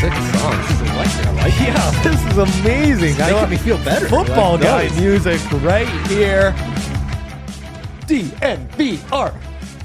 sick song. This is electric. I like it. Yeah, this is amazing. Making me feel better. Football guy Nice. music right here. DNVR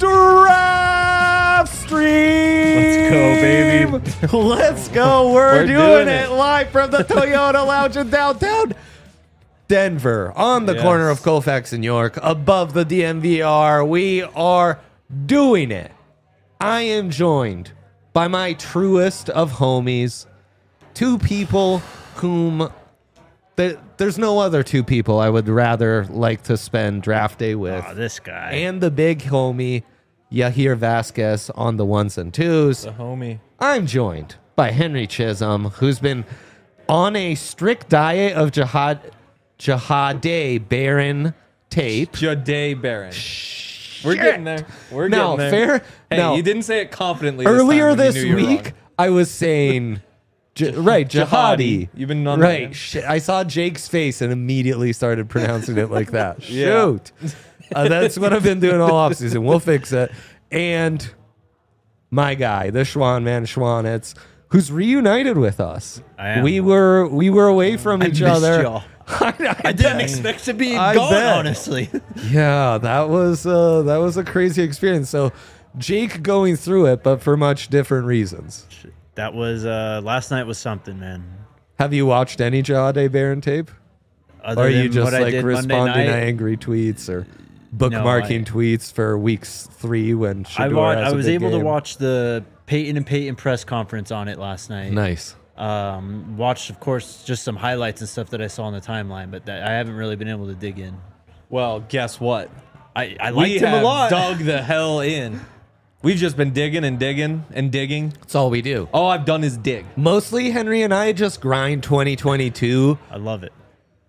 Draft Stream. Let's go, baby. Let's go. We're doing doing it it. live from the Toyota Lounge in downtown Denver, on the Yes. corner of Colfax and York, above the DNVR. We are doing it. I am joined by my truest of homies, two people whom there's no other two people I would rather like to spend draft day with. Oh, this guy. And the big homie, Yahir Vasquez, on the ones and twos. The homie. I'm joined by Henry Chisholm, who's been on a strict diet of Jahade Baron tape. Jade Baron. We're getting there. We're Now, getting there. fair. Hey, now, you didn't say it confidently earlier this this time when you knew you were week, I was saying, right, Jihadi. You've been on Right. that. Shit, I saw Jake's face and immediately started pronouncing it like that. Yeah. Shoot. That's what I've been doing all offseason. We'll fix it. And my guy, the Schwan man, Schwanitz, who's reunited with us. I am. We were away from each missed other. y'all. I I didn't expect to be I gone, bet. honestly. Yeah, that was a crazy experience. So Jake going through it, but for much different reasons. That was last night was something, man. Have you watched any Jahade Baron tape? Other Or are you than just what I like did Monday responding to night, angry tweets or bookmarking tweets for weeks 3 when Shedeur has I a was big able to game? watch the Peyton and Peyton press conference on it last night. Nice. Watched, of course, just some highlights and stuff that I saw on the timeline, but I haven't really been able to dig in. Well, guess what? I We liked him a have lot. dug the hell in. We've just been digging and digging and digging. That's all we do. All I've done is dig. Mostly Henry and I just grind 2022 I love it.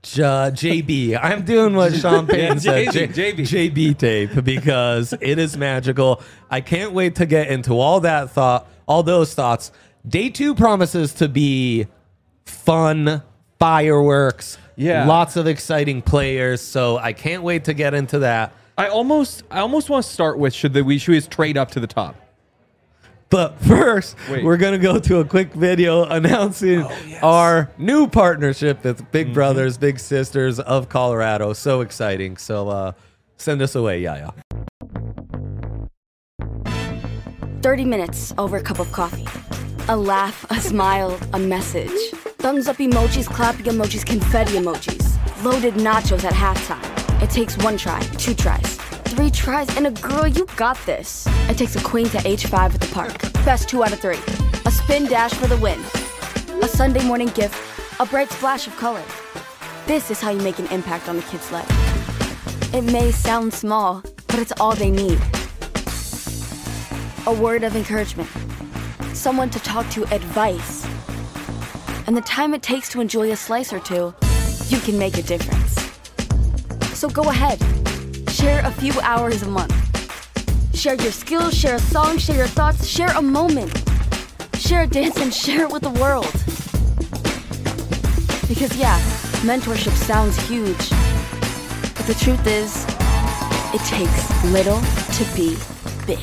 JB. I'm doing what Sean Payton said. JB. JB tape because it is magical. I can't wait to get into all those thoughts. Day 2 promises to be fun, fireworks, lots of exciting players. So I can't wait to get into that. I almost want to start with should we just trade up to the top? But first, Wait. we're going to go to a quick video announcing our new partnership with Big Brothers, Big Sisters of Colorado. So exciting. So send us away, Yaya. 30 minutes over a cup of coffee. A laugh, a smile, a message. Thumbs up emojis, clapping emojis, confetti emojis. Loaded nachos at halftime. It takes 1 try, 2 tries, 3 tries, and a girl, you got this. It takes a queen to H5 at the park. Best 2 out of 3. A spin dash for the win. A Sunday morning gift. A bright splash of color. This is how you make an impact on a kid's life. It may sound small, but it's all they need. A word of encouragement. Someone to talk to, advice. And the time it takes to enjoy a slice or two, you can make a difference. So go ahead, share a few hours a month. Share your skills, share a song, share your thoughts, share a moment. Share a dance and share it with the world. Because yeah, mentorship sounds huge. But the truth is, it takes little to be big.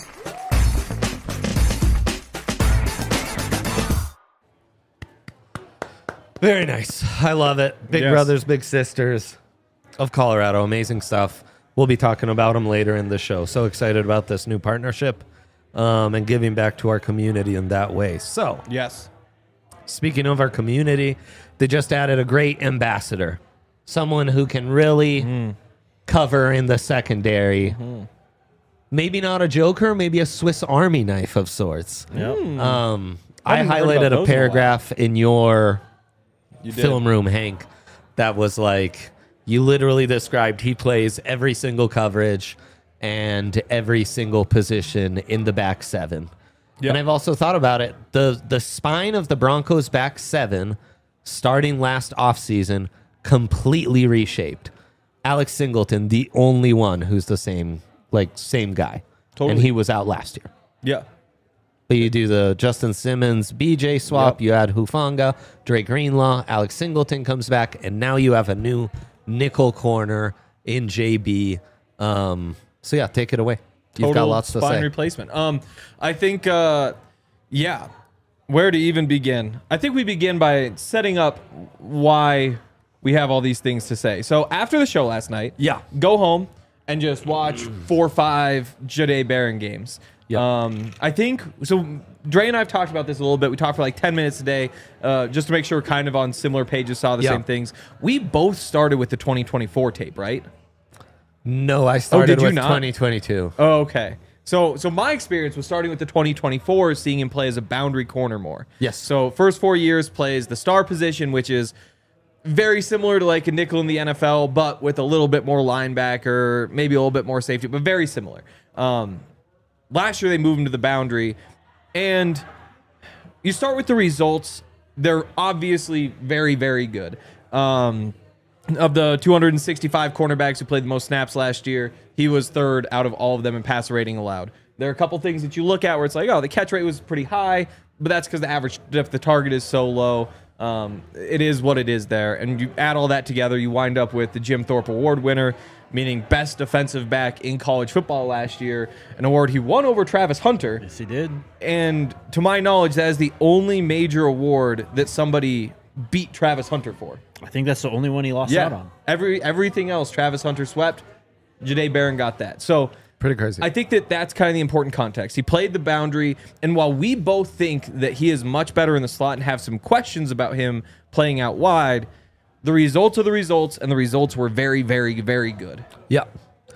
Very nice. I love it. Big Yes. Brothers, Big Sisters of Colorado. Amazing stuff. We'll be talking about them later in the show. So excited about this new partnership and giving back to our community in that way. So, Yes. speaking of our community, they just added a great ambassador. Someone who can really cover in the secondary. Maybe not a joker, maybe a Swiss Army knife of sorts. I Haven't heard about highlighted those a in a paragraph in your You did. film room, Hank, that was like, you literally described he plays every single coverage and every single position in the back 7. Yep. And I've also thought about it. The spine of the Broncos back 7 starting last offseason completely reshaped. Alex Singleton, the only one who's the same guy. Totally. And he was out last year. Yeah. But you do the Justin Simmons, BJ swap, Yep. you add Hufanga, Drake Greenlaw, Alex Singleton comes back, and now you have a new nickel corner in JB. So yeah, take it away. You've got Total lots to spine say. replacement. I think, yeah, Where to even begin? I think we begin by setting up why we have all these things to say. So after the show last night, go home and just watch 4 or 5 Jahdae Barron games. I think so. Dre and I have talked about this a little bit. We talked for like 10 minutes today, just to make sure we're kind of on similar pages, saw the same things. We both started with the 2024 tape, right? No, I started with not? 2022. Oh, okay. So my experience was starting with the 2024, seeing him play as a boundary corner more. Yes. So first 4 years plays the star position, which is very similar to like a nickel in the NFL, but with a little bit more linebacker, maybe a little bit more safety, but very similar. Last year they moved him to the boundary, and you start with the results. They're obviously very, very good. Of the 265 cornerbacks who played the most snaps last year, he was third out of all of them in passer rating allowed. There are a couple things that you look at where it's like, oh, the catch rate was pretty high, but that's because the average depth the target is so low. It is what it is there. And you add all that together, you wind up with the Jim Thorpe Award winner, meaning best defensive back in college football last year, an award he won over Travis Hunter. Yes, he did. And to my knowledge, that is the only major award that somebody beat Travis Hunter for. I think that's the only one he lost out on. Everything else, Travis Hunter swept. Jahdae Barron got that. So Pretty crazy. I think that's kind of the important context. He played the boundary, and while we both think that he is much better in the slot and have some questions about him playing out wide, the results are the results, and the results were very, very, very good. Yeah.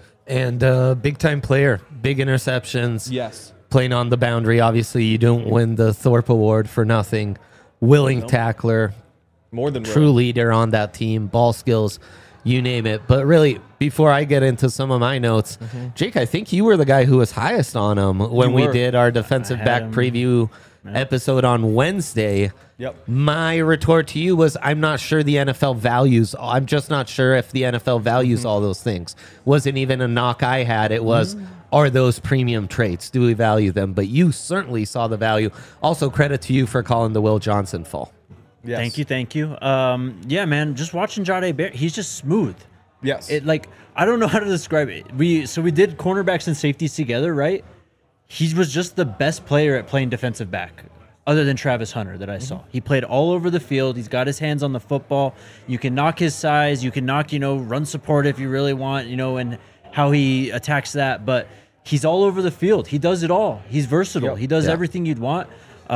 And big-time player, big interceptions. Yes. Playing on the boundary. Obviously, you don't win the Thorpe Award for nothing. Willing tackler. More than true leader on that team. Ball skills, you name it. But really, before I get into some of my notes, Jake, I think you were the guy who was highest on him when we did our defensive back preview episode on Wednesday. Yep. My retort to you was, I'm not sure the NFL values. I'm just not sure if the NFL values all those things. Wasn't even a knock I had. It was, are those premium traits? Do we value them? But you certainly saw the value. Also, credit to you for calling the Will Johnson fall. Yes. Thank you. Yeah, man, just watching Jahdae Barron, he's just smooth. Yes. It like, I don't know how to describe it. We did cornerbacks and safeties together, right? He was just the best player at playing defensive back, other than Travis Hunter that I saw. He played all over the field. He's got his hands on the football. You can knock his size. You can knock, run support if you really want, and how he attacks that. But he's all over the field. He does it all. He's versatile. He does everything you'd want.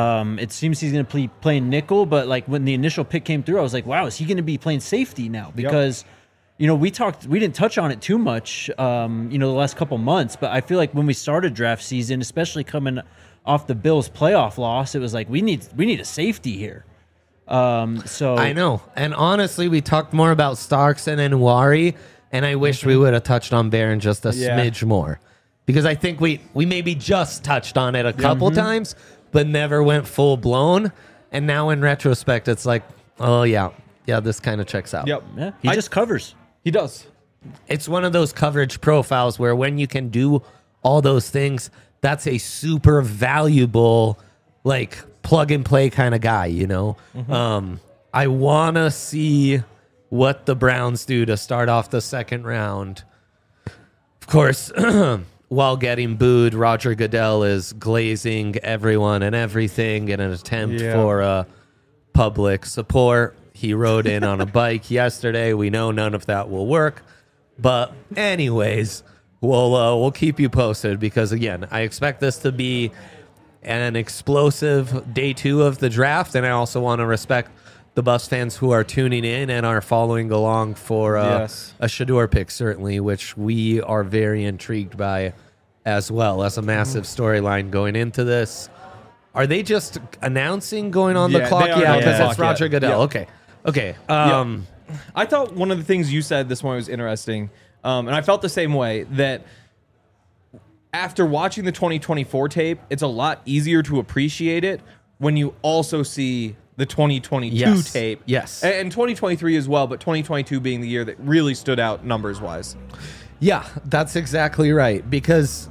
It seems he's going to be playing nickel, but like when the initial pick came through, I was like, wow, is he going to be playing safety now? Because we didn't touch on it too much, the last couple months, but I feel like when we started draft season, especially coming off the Bills playoff loss, it was like, we need a safety here. So I know. And honestly, we talked more about Starks and Nwari, and I wish we would have touched on Barron just a smidge more. Because I think we maybe just touched on it a couple times, but never went full blown. And now in retrospect, it's like, oh yeah, this kind of checks out. Yep. Yeah, he just covers. He does. It's one of those coverage profiles where when you can do all those things, that's a super valuable, like, plug and play kind of guy, I want to see what the Browns do to start off the second round. Of course, while getting booed, Roger Goodell is glazing everyone and everything in an attempt for public support. He rode in on a bike yesterday. We know none of that will work. But anyways, we'll keep you posted because, again, I expect this to be an explosive day 2 of the draft. And I also want to respect the Buffs fans who are tuning in and are following along for a Shedeur pick, certainly, which we are very intrigued by as well as a massive storyline going into this. Are they just announcing going on the clock? Yeah, because it's Roger Goodell. Yeah. Okay. I thought one of the things you said this morning was interesting, and I felt the same way, that after watching the 2024 tape, it's a lot easier to appreciate it when you also see the 2022 tape. Yes. And 2023 as well, but 2022 being the year that really stood out numbers-wise. Yeah, that's exactly right, because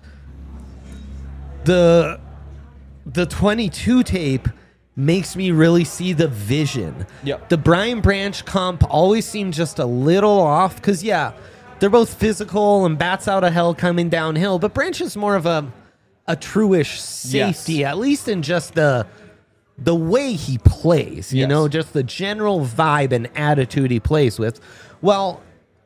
the 22 tape makes me really see the vision. Yep. The Brian Branch comp always seemed just a little off because, they're both physical and bats out of hell coming downhill, but Branch is more of a true-ish safety, at least in just the the way he plays, you Yes. know, just the general vibe and attitude he plays with. Well,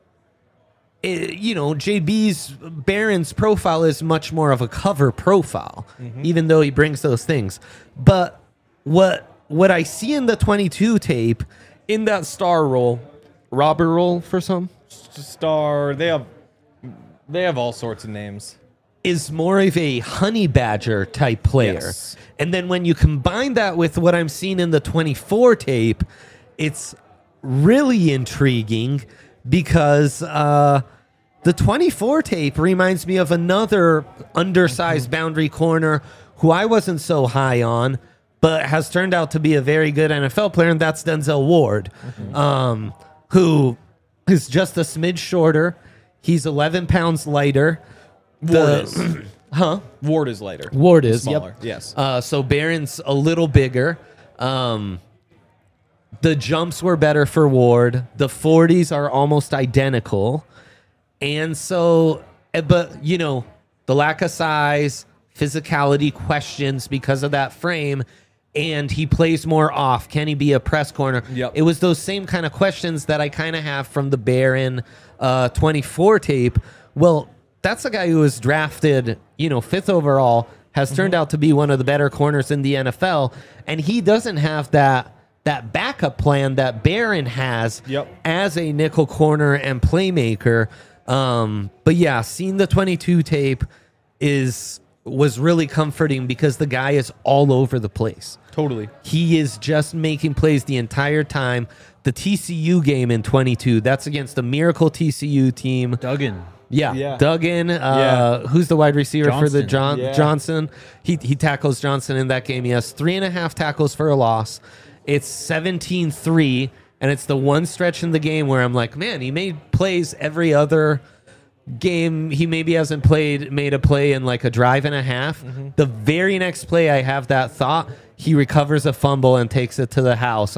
you know, Barron's profile is much more of a cover profile, even though he brings those things. But what I see in the 22 tape, in that star role, robber role for some, Star. They have all sorts of names. is more of a honey badger type player. Yes. And then when you combine that with what I'm seeing in the 24 tape, it's really intriguing because the 24 tape reminds me of another undersized boundary corner who I wasn't so high on, but has turned out to be a very good NFL player, and that's Denzel Ward, who is just a smidge shorter. He's 11 pounds lighter. Ward is. Huh? Ward is lighter. Ward is, smaller. yep. Yes. So Barron's a little bigger. The jumps were better for Ward. The 40s are almost identical. And so, but, you know, the lack of size, physicality questions because of that frame, and he plays more off. Can he be a press corner? Yep. It was those same kind of questions that I kind of have from the Barron 24 tape. Well, that's a guy who was drafted, you know, 5th overall, has turned out to be one of the better corners in the NFL, and he doesn't have that backup plan that Barron has as a nickel corner and playmaker. But yeah, seeing the 22 tape was really comforting because the guy is all over the place. Totally. He is just making plays the entire time. The TCU game in 22, that's against the Miracle TCU team. Duggan. Yeah. Duggan, who's the wide receiver for the Johnson. He tackles Johnson in that game. He has 3.5 tackles for a loss. It's 17-3, and it's the one stretch in the game where I'm like, man, he made plays every other game. He maybe hasn't made a play in like a drive and a half. The very next play I have that thought, he recovers a fumble and takes it to the house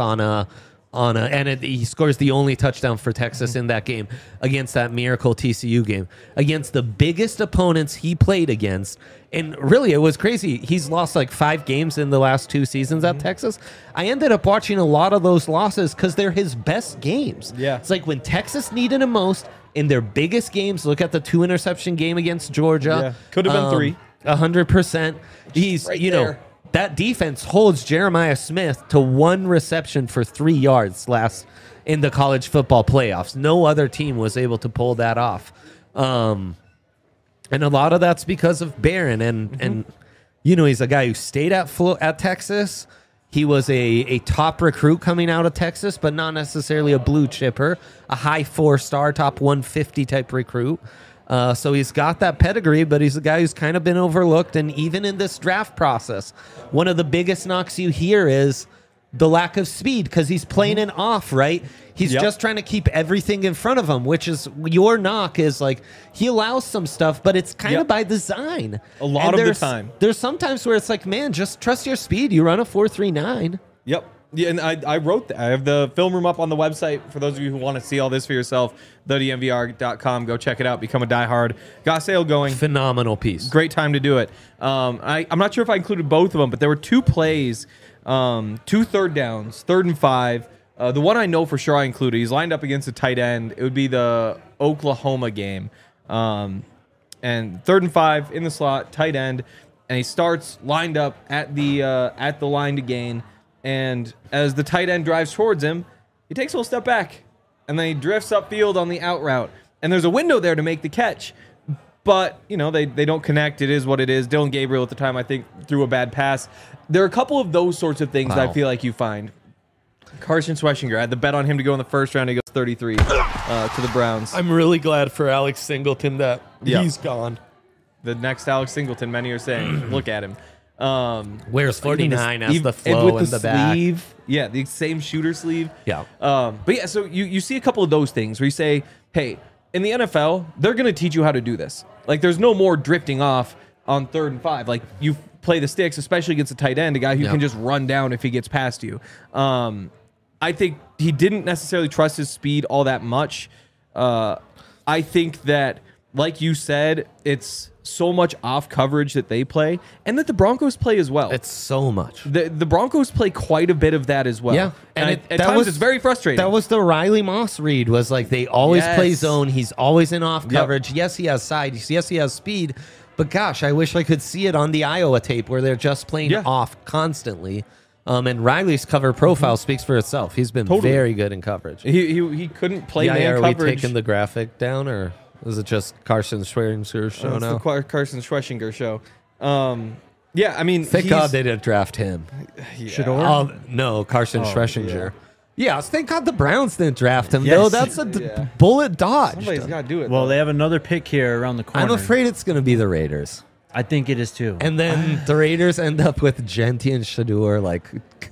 he scores the only touchdown for Texas in that game against that Miracle TCU game, against the biggest opponents he played against. And really, it was crazy. He's lost like 5 games in the last 2 seasons at Texas. I ended up watching a lot of those losses because they're his best games. Yeah. It's like when Texas needed him most in their biggest games. Look at the 2-interception game against Georgia. Yeah. Could have been 3. 100%. He's, right you know, there. that defense holds Jeremiah Smith to 1 reception for 3 yards last in the college football playoffs. No other team was able to pull that off. And a lot of that's because of Barron. And you know, he's a guy who stayed at Texas. He was a top recruit coming out of Texas, but not necessarily a blue chipper, a high 4-star, top 150 type recruit. So he's got that pedigree, but he's a guy who's kind of been overlooked. And even in this draft process, one of the biggest knocks you hear is the lack of speed because he's playing it off, right? He's just trying to keep everything in front of him, which is your knock is like he allows some stuff, but it's kind of by design. A lot of the time. There's sometimes where it's like, man, just trust your speed. You run a 4.39. Yep. Yeah, and I wrote that. I have the film room up on the website for those of you who want to see all this for yourself. TheDMVR.com. Go check it out. Become a diehard. Got sale going. Phenomenal piece. Great time to do it. I'm not sure if I included both of them, but there were 2 plays, 2 third downs, 3rd and 5. The one I know for sure I included, he's lined up against a tight end. It would be the Oklahoma game. And 3rd and 5 in the slot, tight end, and he starts lined up at the line to gain. And as the tight end drives towards him, he takes a little step back, and then he drifts upfield on the out route. And there's a window there to make the catch, but you know they don't connect. It is what it is. Dylan Gabriel at the time, I think, threw a bad pass. There are a couple of those sorts of things that I feel like you find. Carson Schweschinger, I had the bet on him to go in the first round. He goes 33 to the Browns. I'm really glad for Alex Singleton that he's gone. The next Alex Singleton, many are saying, look at him. Wears 49 as the flow with in the back. sleeve. Yeah, the same shooter sleeve. Yeah. But yeah, so you see a couple of those things where you say, hey, in the NFL, they're going to teach you how to do this. Like, there's no more drifting off on 3rd and 5. Like, you play the sticks, especially against a tight end, a guy who can just run down if he gets past you. I think he didn't necessarily trust his speed all that much. I think that like you said, it's so much off coverage that they play and that the Broncos play as well. It's so much. The Broncos play quite a bit of that as well. Yeah. And at times it's very frustrating. That was the Riley Moss read, was like they always Yes. play zone. He's always in off Yep. coverage. Yes, he has sides. Yes, he has speed. But gosh, I wish I could see it on the Iowa tape where they're just playing Yeah. off constantly. And Riley's cover profile speaks for itself. He's been Totally. very good in coverage. He couldn't play Yeah, man are coverage. we taking the graphic down, or is it just Carson Schweringer's show It's now? the Carson Schweschinger show. Yeah, I mean, Thank God they didn't draft him. Shador? No, Carson Schlesinger. yeah. Yes, thank God the Browns didn't draft him. Yes. No, that's a Yeah. bullet dodged. Somebody's got to do it. Well, though. they have another pick here around the corner. I'm afraid it's going to be the Raiders. I think it is too. And then the Raiders end up with Genti and Shador. Like,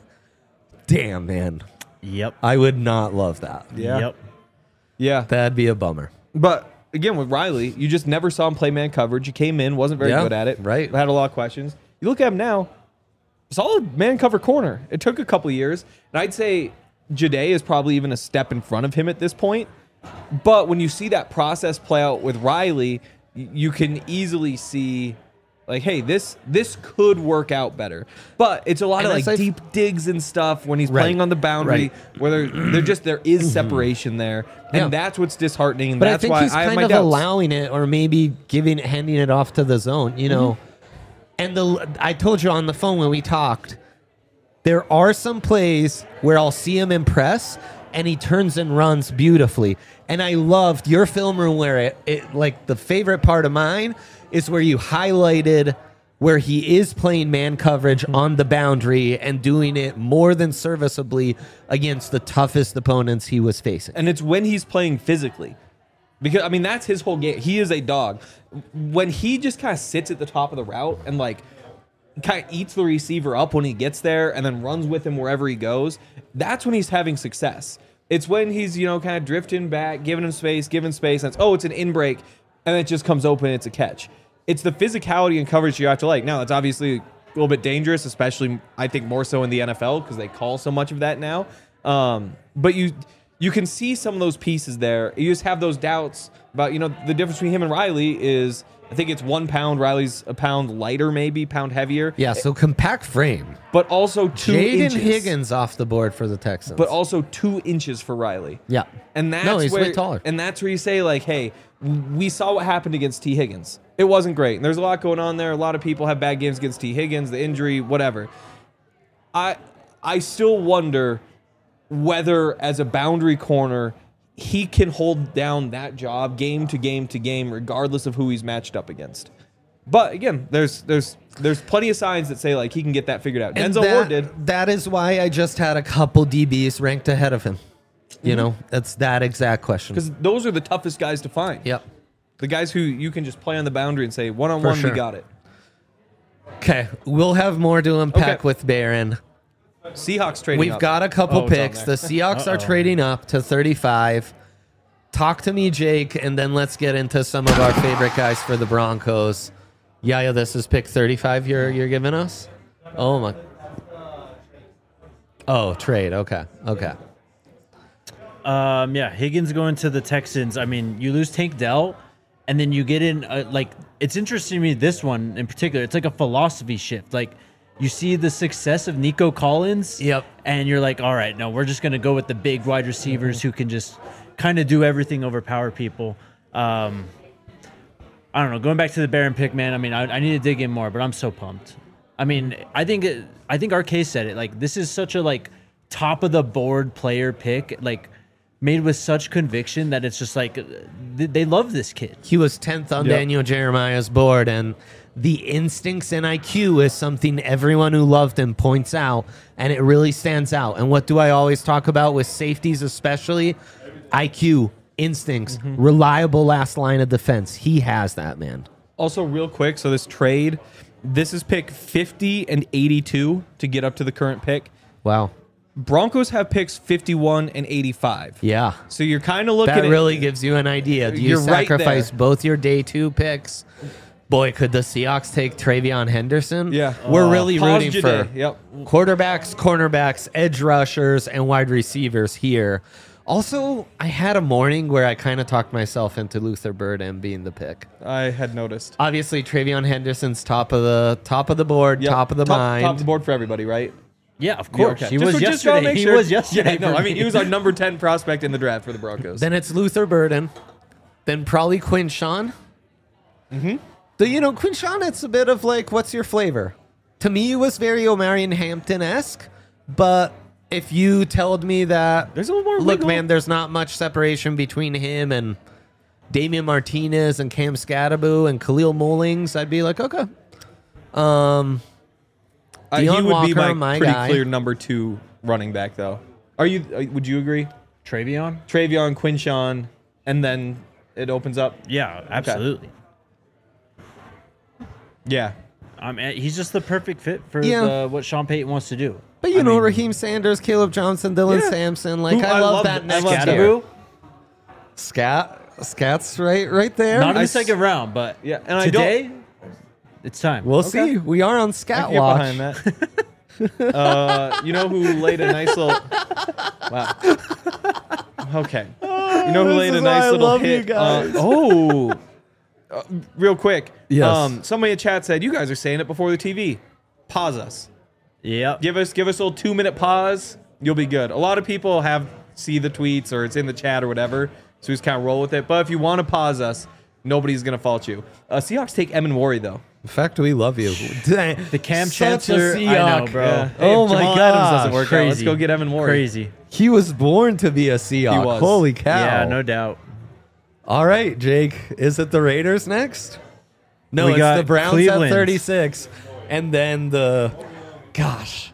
damn, man. Yep. I would not love that. Yeah. Yep. Yeah. That'd be a bummer. But again, with Riley, you just never saw him play man coverage. He came in, wasn't very Yeah, good at it. right. Had a lot of questions. You look at him now, solid man cover corner. It took a couple years. And I'd say Jade is probably even a step in front of him at this point. But when you see that process play out with Riley, you can easily see, like, hey, this could work out better. But it's a lot of And like as I've- deep digs and stuff when he's Right. playing on the boundary, where there is separation there, and Yeah. that's what's disheartening. And But that's I think why he's I have kind my of doubts. allowing it, or maybe handing it off to the zone, you know. And I told you on the phone when we talked, there are some plays where I'll see him impress, and he turns and runs beautifully. And I loved your film room where it like the favorite part of mine is where you highlighted where he is playing man coverage on the boundary and doing it more than serviceably against the toughest opponents he was facing. And it's when he's playing physically. Because, I mean, that's his whole game. He is a dog. When he just kind of sits at the top of the route and, like, kind of eats the receiver up when he gets there and then runs with him wherever he goes, that's when he's having success. It's when he's, kind of drifting back, giving space, and it's an in break, and it just comes open, it's a catch. It's the physicality and coverage you have to like. Now, it's obviously a little bit dangerous, especially, I think, more so in the NFL because they call so much of that now. But you can see some of those pieces there. You just have those doubts about, the difference between him and Riley is, I think it's 1 pound. Riley's a pound lighter, maybe, pound heavier. Yeah, so compact frame. But also 2 Jaden inches. Higgins off the board for the Texans. But also 2 inches for Riley. yeah. And that's No, he's where, way taller. And that's where you say, like, hey, we saw what happened against T. Higgins. It wasn't great. And there's a lot going on there. A lot of people have bad games against T. Higgins, the injury, whatever. I still wonder whether, as a boundary corner, he can hold down that job game to game to game, regardless of who he's matched up against. But again, there's plenty of signs that say like he can get that figured out. And Denzel Ward did. That is why I just had a couple DBs ranked ahead of him. You know, that's that exact question. Because those are the toughest guys to find. Yep. The guys who you can just play on the boundary and say, one-on-one, For sure. we got it. Okay, we'll have more to unpack Okay. with Barron. Seahawks trading We've up. got a couple Oh, it's on picks. The there. Seahawks are trading up to 35. Talk to me, Jake, and then let's get into some of our favorite guys for the Broncos. Yeah, this is pick 35 you're giving us? Oh, my. Oh, trade. Okay. Yeah, Higgins going to the Texans. I mean, you lose Tank Dell, and then you get in, it's interesting to me, this one in particular. It's like a philosophy shift. Like, you see the success of Nico Collins. Yep. And you're like, all right, no, we're just going to go with the big wide receivers who can just kind of do everything, overpower people. I don't know. Going back to the Barron pick, man, I mean, I need to dig in more, but I'm so pumped. I mean, I think our case said it. Like, this is such a, like, top-of-the-board player pick, like, made with such conviction that it's just like they love this kid. He was 10th on Yep. Daniel Jeremiah's board, and the instincts and IQ is something everyone who loved him points out, and it really stands out. And what do I always talk about with safeties especially? IQ, instincts, reliable last line of defense. He has that, man. Also, real quick, so this trade, this is pick 50 and 82 to get up to the current pick. Wow. Broncos have picks 51 and 85. Yeah. So you're kind of looking That at really gives you an idea. Do you You're right sacrifice there. both your day 2 picks? Boy, could the Seahawks take Travion Henderson? Yeah. We're really Pause rooting your for day. Yep. quarterbacks, cornerbacks, edge rushers, and wide receivers here. Also, I had a morning where I kind of talked myself into Luther Burden being the pick. I had noticed. Obviously, Travion Henderson's top of the board, Yep. top of the mind. Top of the board for everybody, right? Yeah, of course. Okay. He Just was wanna yesterday. make He sure. was yesterday. Yeah, no, for I mean, me. he was our number 10 prospect in the draft for the Broncos. Then it's Luther Burden. Then probably Quinshon. Mm-hmm. So, Quinshon, it's a bit of like, what's your flavor? To me, it was very Omarion Hampton-esque. But if you told me that, There's a little more look, wiggle. man, there's not much separation between him and Damian Martinez and Cam Scadaboo and Khalil Mullings, I'd be like, okay. He Deion would be Walker, my my pretty guy. clear number 2 running back, though. Would you agree? Travion? Travion, Quinshon, and then it opens up. Yeah, absolutely. Yeah. He's just the perfect fit for Yeah. what Sean Payton wants to do. But Raheem Sanders, Caleb Johnson, Dylan Yeah. Sampson, like Who I I love love that th- next I love tier. Scadaboo? Scat's right there. Not in I the s- second round, but Yeah, and I today, it's time. We'll Okay. see. We are on I Scat can get Watch. behind that. You know who laid a nice little... Wow. Okay. You know who laid is a why I nice little love you hit? guys. Real quick. Yes. Somebody in chat said, you guys are saying it before the TV. Pause us. Yep. Give us a little 2-minute pause. You'll be good. A lot of people see the tweets or it's in the chat or whatever, so we just kind of roll with it. But if you want to pause us, nobody's going to fault you. Seahawks take Emin Worry, though. In fact, we love you. The Cam Such a Chancellor, I know, Seahawk. bro. Yeah. Hey, Oh if my Jamal Adams gosh. doesn't work out, let's Crazy. go get Emin Worry. Crazy. He was born to be a Seahawk. He was. Holy cow. Yeah, no doubt. All right, Jake. Is it the Raiders next? No, We it's got the Browns Cleveland. at 36. And then gosh.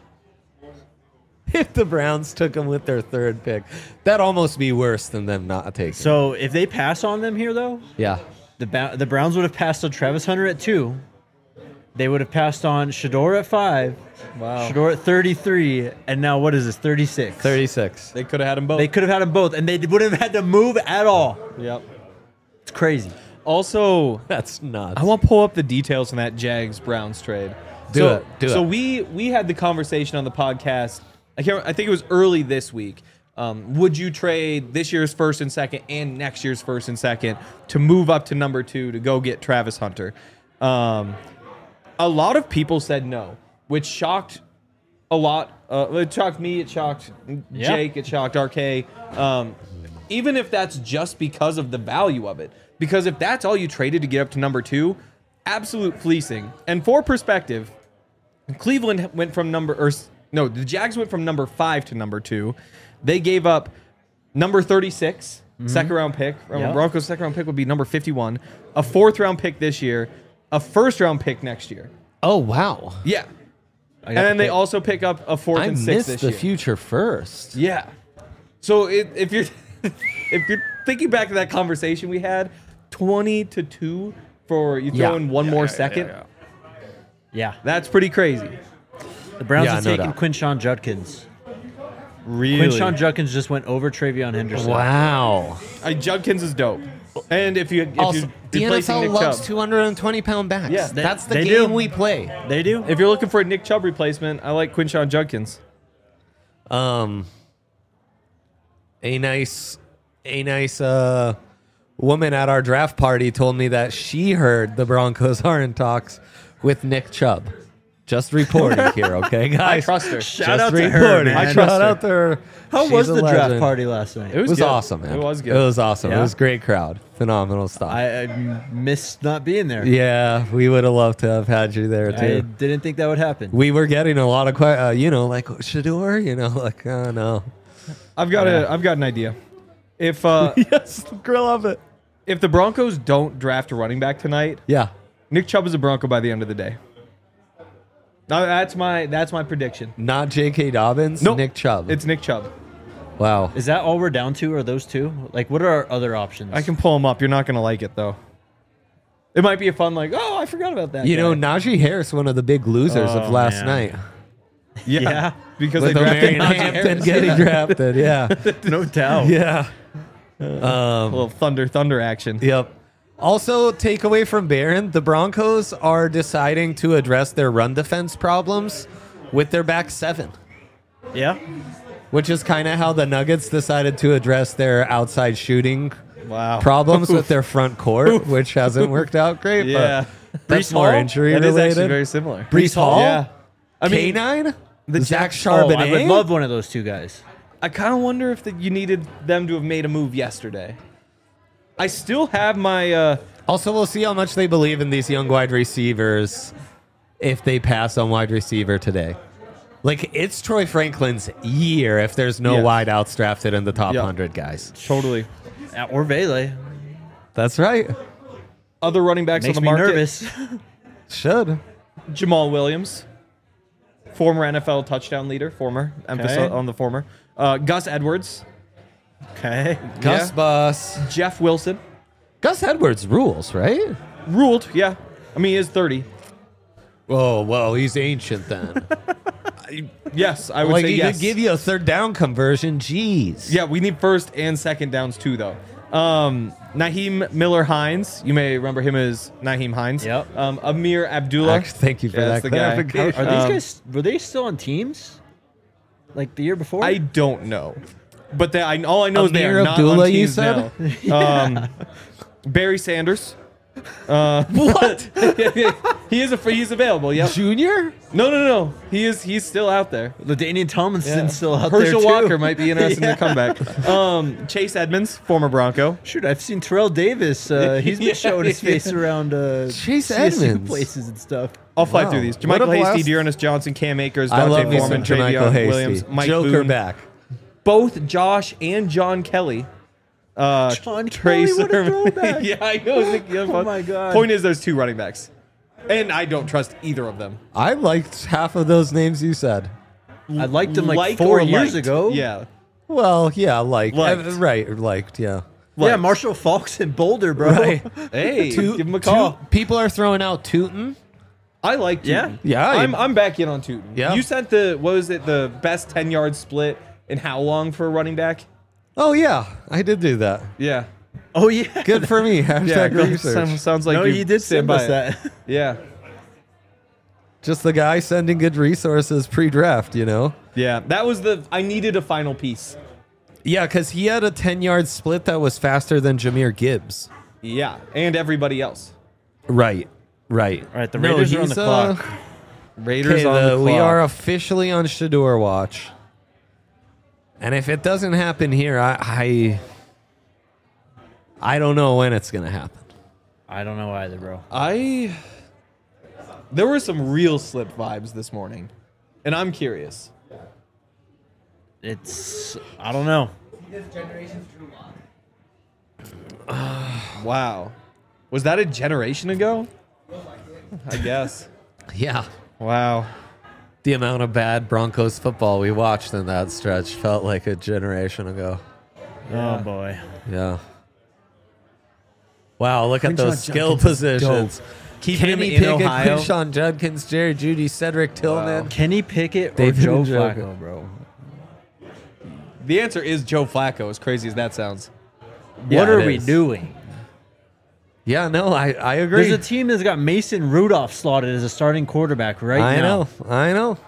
If the Browns took them with their third pick, that'd almost be worse than them not taking. So if they pass on them here, though, Yeah. the Browns would have passed on Travis Hunter at 2. They would have passed on Shador at 5. Wow. Shador at 33. And now what is this? 36. 36. They could have had them both. They could have had them both, and they wouldn't have had to move at all. Yep. It's crazy. Also, That's nuts. I want to pull up the details on that Jags-Browns trade. Do so, it. Do so it. we had the conversation on the podcast. I think it was early this week. Would you trade this year's first and second and next year's first and second to move up to number 2 to go get Travis Hunter? A lot of people said no, which shocked a lot. It shocked me. It shocked Jake. It shocked RK. Even if that's just because of the value of it. Because if that's all you traded to get up to number 2, absolute fleecing. And for perspective, Cleveland went from the Jags went from number 5 to number 2. They gave up number 36, second round pick. Yep. Broncos' second round pick would be number 51, a 4th round pick this year, a 1st round pick next year. Oh, wow. Yeah. And then they also pick up a 4th I and 6th missed this the year. future first. Yeah. So if you're if you're thinking back to that conversation we had, 20-2 for you throw in one more second. Yeah. That's pretty crazy. The Browns Yeah, have no taken doubt. Quinshon Judkins. Really? Quinshon Judkins just went over Travion Henderson. Wow. Judkins is dope. And if you're Also, the replacing NFL Nick loves Chubb, 220-pound backs. Yeah. That's the They game do. we play. They do? if you're looking for a Nick Chubb replacement, I like Quinshon Judkins. A nice woman at our draft party told me that she heard the Broncos are in talks with Nick Chubb. Just reporting here, okay, guys? I trust her. Shout Just out to her, reporting. man. I trust Shout her. out to her. How She's was a the draft legend. party last night? It was It was good. awesome, man. It was good. It was awesome. Yeah? It was a great crowd. Phenomenal stuff. I missed not being there. Yeah, we would have loved to have had you there I too. didn't think that would happen. We were getting a lot of like Shador, like oh no. I've got an idea. If Yes, grill of it. if the Broncos don't draft a running back tonight, Yeah. Nick Chubb is a Bronco by the end of the day. Now, that's my prediction. Not J.K. Dobbins, Nope. Nick Chubb. It's Nick Chubb. Wow. Is that all we're down to? Are those two? Like, what are our other options? I can pull him up. You're not gonna like it though. It might be a fun I forgot about that. You know, guy. Najee Harris, one of the big losers of Oh, last man. night. yeah, because With they drafted Omarion Najee Hampton Harris. getting drafted. Yeah. no doubt. Yeah. A little thunder action. Yep. Also, takeaway from Barron, the Broncos are deciding to address their run defense problems with their back seven. Yeah. which is kind of how the Nuggets decided to address their outside shooting problems with their front court, which hasn't worked out great. Yeah. But that's Brees more Hall? injury That is related. actually very similar. Brees Hall? Yeah. I mean, K9? the Zach Jets- Charbonnet? I would love one of those two guys. I kind of wonder if you needed them to have made a move yesterday. I still have my... Also, we'll see how much they believe in these young wide receivers if they pass on wide receiver today. Like, it's Troy Franklin's year if there's no wideouts drafted in the top 100 guys. Totally. Or Vele. That's right. Other running backs Makes on me the market. nervous. Should. Jamal Williams. Former NFL touchdown leader. Former. Emphasis on the former. Gus Edwards. Okay. Gus Bus. Jeff Wilson. Gus Edwards rules, right? Ruled, yeah. I mean, he is 30. Oh, well, he's ancient then. Yes, I would Like, say he yes. could give you a third down conversion. Jeez. Yeah, we need first and second downs too, though. Naheem Miller Hines. You may remember him as Naheem Hines. Yep. Amir Abdullah. Thank you for Yeah, that that's the guy. clarification. Are these guys, were they still on teams? Like the year before? I don't know. But all I know is they Amir are not Abdullah, on you teams said? now. Barry Sanders. What? He's available. Yep. Junior? No. He's still out there. LaDainian Tomlinson's Yeah. still out there Herschel too. Walker might be interested in the comeback. Chase Edmonds, former Bronco. Shoot, I've seen Terrell Davis. He's been showing his face around Chase CSU Edmonds. places and stuff. I'll fly Wow. through these. What a Jermichael Hasty, blast. Dearness Johnson, Cam Akers, I love Dante me Foreman, some Jermichael Travion Hasty. Williams, Mike Joker Boone. back. Both Josh and John Kelly. John Trey Kelly, what a Sermon. throwback. Yeah, I know. Oh my God. Point is, there's 2 running backs. And I don't trust either of them. I liked half of those names you said. I liked him like Like 4 or years liked? ago. Yeah. Well, yeah, liked. Liked. Liked, yeah. Yeah, Liked. Marshall Falks and Boulder, bro. Right. Hey, give him a call. People are throwing out Tootin. I like Tootin. Yeah, I'm back in on Tootin. Yeah. You sent the best 10-yard split in how long for a running back? Oh, yeah. I did do that. Yeah. Oh yeah. Good for me. Hashtag research. Sounds like No, you did stand send by us it. that. Yeah. Just the guy sending good resources pre-draft, you know? Yeah. That was I needed a final piece. Yeah, because he had a 10-yard split that was faster than Jahmyr Gibbs. Yeah. And everybody else. Right. All right, the Raiders are on the clock. Raiders on the clock. We are officially on Shador watch. And if it doesn't happen here, I don't know when it's going to happen. I don't know either, bro. There were some real slip vibes this morning. And I'm curious. I don't know. Wow. Was that a generation ago? I guess. Yeah. Wow. The amount of bad Broncos football we watched in that stretch felt like a generation ago. Oh boy. Yeah. Wow, look at Quinshon those skill Judkins is positions. Keep him Kenny in Pickett, Ohio. Quinshon Judkins, Jerry Judy, Cedric Tillman. Kenny Pickett or David Joe Njoku. Flacco, bro? The answer is Joe Flacco, as crazy as that sounds. Yeah, What are it we is. doing? Yeah, no, I agree. There's a team that's got Mason Rudolph slotted as a starting quarterback right now. I know.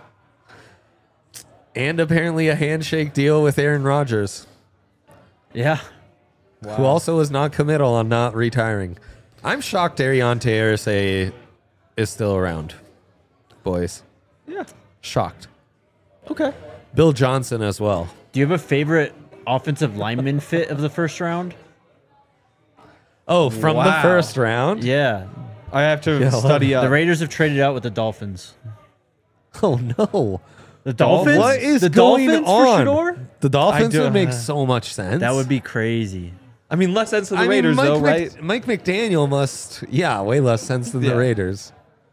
And apparently a handshake deal with Aaron Rodgers, Yeah. who also was not committal on not retiring. I'm shocked Arion Tersay is still around, boys. Yeah. Shocked. Okay. Bill Johnson as well. Do you have a favorite offensive lineman fit of the first round? Oh, from the Wow. first round? Yeah. I have to Yeah, study up. The Raiders have traded out with the Dolphins. Oh, no. The Dolphins? What is the going Dolphins on? for Shador? The Dolphins I do- would make so much sense. That would be crazy. I mean, less sense to the I mean, Raiders, Mike though, right? Mike McDaniel must, way less sense than Yeah. the Raiders.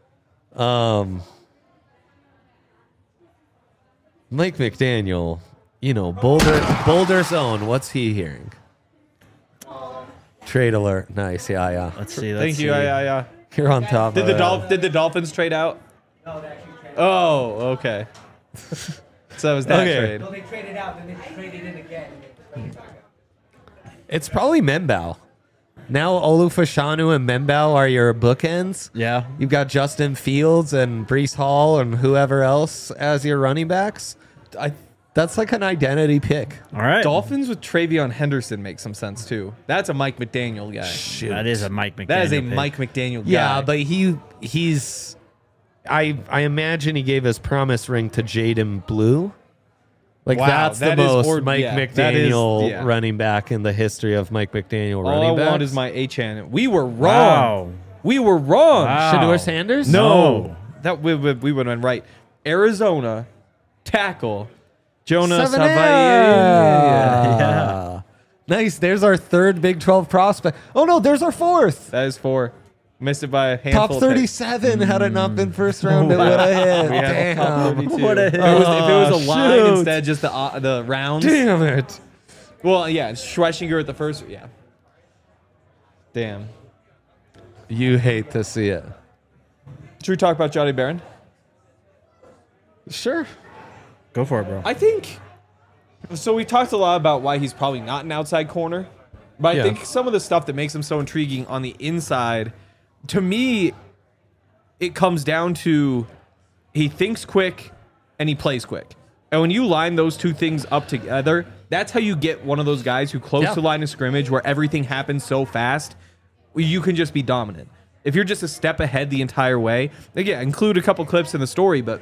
Mike McDaniel, Boulder's own. What's he hearing? Trade alert. Nice. Yeah. Let's see. Thank you. Yeah. You're on top Did of it. did the Dolphins trade out? No, they actually traded. Oh, okay. So it was that Okay. trade. No, they traded out, then they traded in again. And they traded back up. It's probably Membao. Now Olufashanu and Membao are your bookends. Yeah. You've got Justin Fields and Brees Hall and whoever else as your running backs. That's like an identity pick. All right. Dolphins with Travion Henderson makes some sense too. That's a Mike McDaniel guy. Shoot. That is a Mike McDaniel. That is a pick. Mike McDaniel guy. Yeah, but he's. I imagine he gave his promise ring to Jaden Blue. Like Wow, that's the that is most Mike McDaniel yeah. running back in the history of Mike McDaniel All running I backs. want is my H-N. We were wrong. Wow. We were wrong. Wow. Shador Sanders? No. That we would have been right. Arizona, tackle, Jonas Savannah. Savaier. Yeah. Nice. There's our third Big 12 prospect. Oh no, there's our fourth. That is 4. Missed it by a handful. Top of picks. 37 had it not been first round, it would have hit. We had a top Damn. 32. What a hit. If it was a line shoot. instead, just the rounds. Damn it. Well, yeah, Schwessinger at the first. Yeah. Damn. You hate to see it. Should we talk about Johnny Barron? Sure. Go for it, bro. I think. So we talked a lot about why he's probably not an outside corner, but I Yeah. think some of the stuff that makes him so intriguing on the inside, to me, it comes down to he thinks quick and he plays quick. And when you line those two things up together, that's how you get one of those guys who close to line of scrimmage where everything happens so fast, you can just be dominant. If you're just a step ahead the entire way, again, include a couple clips in the story, but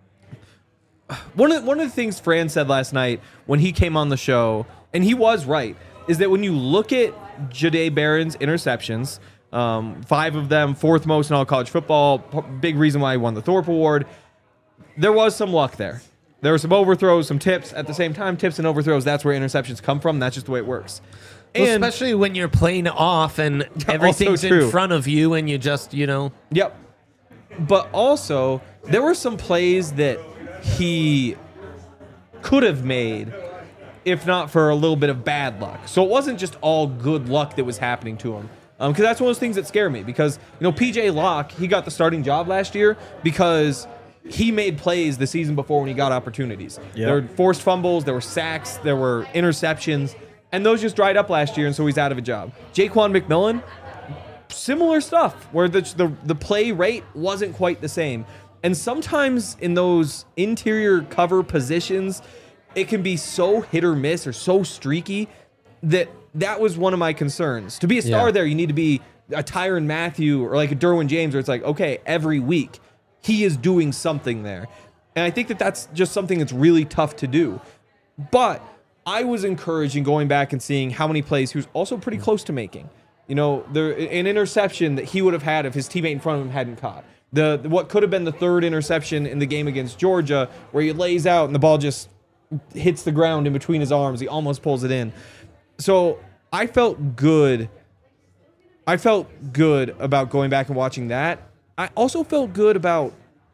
one of the things Fran said last night when he came on the show, and he was right, is that when you look at Jahdae Barron's interceptions, 5 of them, 4th most in all college football, big reason why he won the Thorpe Award, there was some luck there. There were some overthrows, some tips. At the same time, tips and overthrows, that's where interceptions come from. That's just the way it works. Well, And especially when you're playing off and everything's true. in front of you and you just, Yep. But also, there were some plays that he could have made if not for a little bit of bad luck. So it wasn't just all good luck that was happening to him. Because that's one of those things that scare me. Because, P.J. Locke, he got the starting job last year because he made plays the season before when he got opportunities. Yep. There were forced fumbles, there were sacks, there were interceptions, and those just dried up last year, and so he's out of a job. Jaquan McMillan, similar stuff, where the play rate wasn't quite the same. And sometimes in those interior cover positions, it can be so hit or miss or so streaky that was one of my concerns. To be a star there, you need to be a Tyrann Mathieu or like a Derwin James, where it's like, okay, every week he is doing something there. And I think that that's just something that's really tough to do. But I was encouraged in going back and seeing how many plays he was also pretty close to making. An interception that he would have had if his teammate in front of him hadn't caught. What could have been the 3rd interception in the game against Georgia, where he lays out and the ball just hits the ground in between his arms. He almost pulls it in. So I felt good. I felt good about going back and watching that. I also felt good about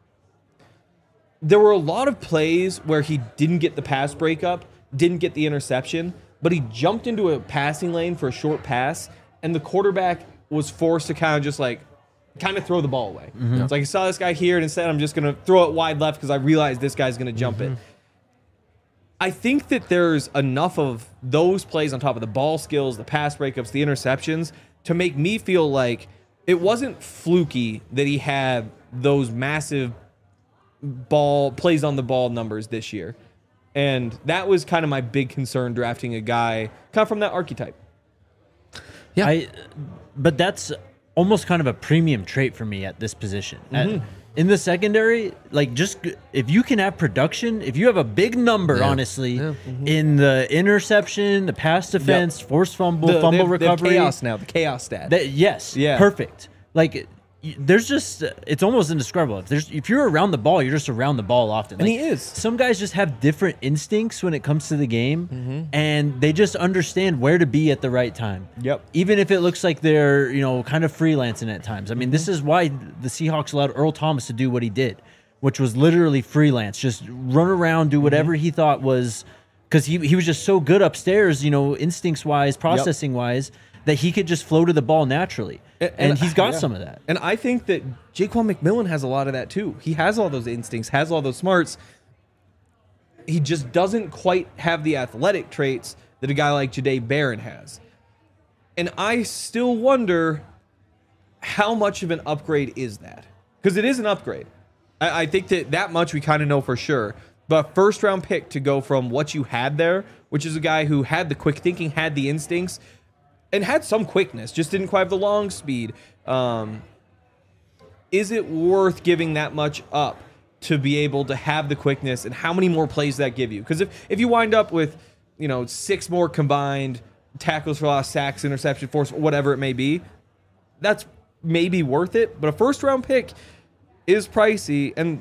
there were a lot of plays where he didn't get the pass breakup, didn't get the interception, but he jumped into a passing lane for a short pass, and the quarterback was forced to kind of throw the ball away. It's like, I saw this guy here, and instead I'm just going to throw it wide left because I realized this guy's going to jump it. I think that there's enough of those plays on top of the ball skills, the pass breakups, the interceptions, to make me feel like it wasn't fluky that he had those massive plays on the ball numbers this year. And that was kind of my big concern drafting a guy kind of from that archetype. Yeah. But that's almost kind of a premium trait for me at this position. In the secondary, just if you can have production, if you have a big number, honestly, in the interception, the pass defense, forced fumble, fumble recovery. The chaos now, the chaos stat. Yes, Yeah. perfect. There's just, it's almost indescribable. If you're around the ball, you're just around the ball often. And he is. Some guys just have different instincts when it comes to the game, and they just understand where to be at the right time. Yep. Even if it looks like they're, kind of freelancing at times. I mean, this is why the Seahawks allowed Earl Thomas to do what he did, which was literally freelance. Just run around, do whatever he thought was, because he was just so good upstairs, instincts-wise, processing-wise, that he could just flow to the ball naturally. And he's got some of that. And I think that Jaquan McMillan has a lot of that too. He has all those instincts, has all those smarts. He just doesn't quite have the athletic traits that a guy like Jahdae Barron has. And I still wonder how much of an upgrade is that? Because it is an upgrade. I think that much we kind of know for sure. But first round pick to go from what you had there, which is a guy who had the quick thinking, had the instincts, and had some quickness, just didn't quite have the long speed. Is it worth giving that much up to be able to have the quickness, and how many more plays that give you? Because if you wind up with 6 more combined tackles for loss, sacks, interception, force, whatever it may be, that's maybe worth it. But a first round pick is pricey, and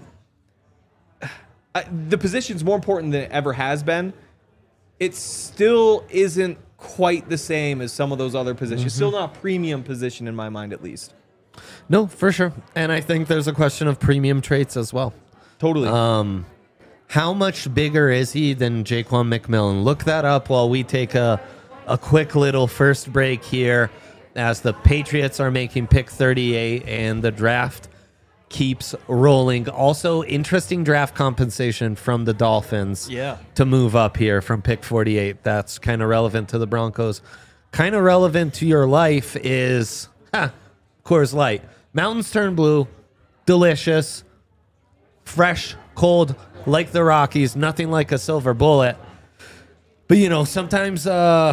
the position's more important than it ever has been. It still isn't quite the same as some of those other positions. Still not a premium position in my mind, at least. No, for sure. And I think there's a question of premium traits as well. Totally. How much bigger is he than Jaquan McMillan? Look that up while we take a quick little first break here as the Patriots are making pick 38 and the draft keeps rolling. Also, interesting draft compensation from the Dolphins to move up here from pick 48. That's kind of relevant to the Broncos. Kind of relevant to your life is Coors Light. Mountains turn blue, delicious, fresh, cold, like the Rockies, nothing like a silver bullet. But, sometimes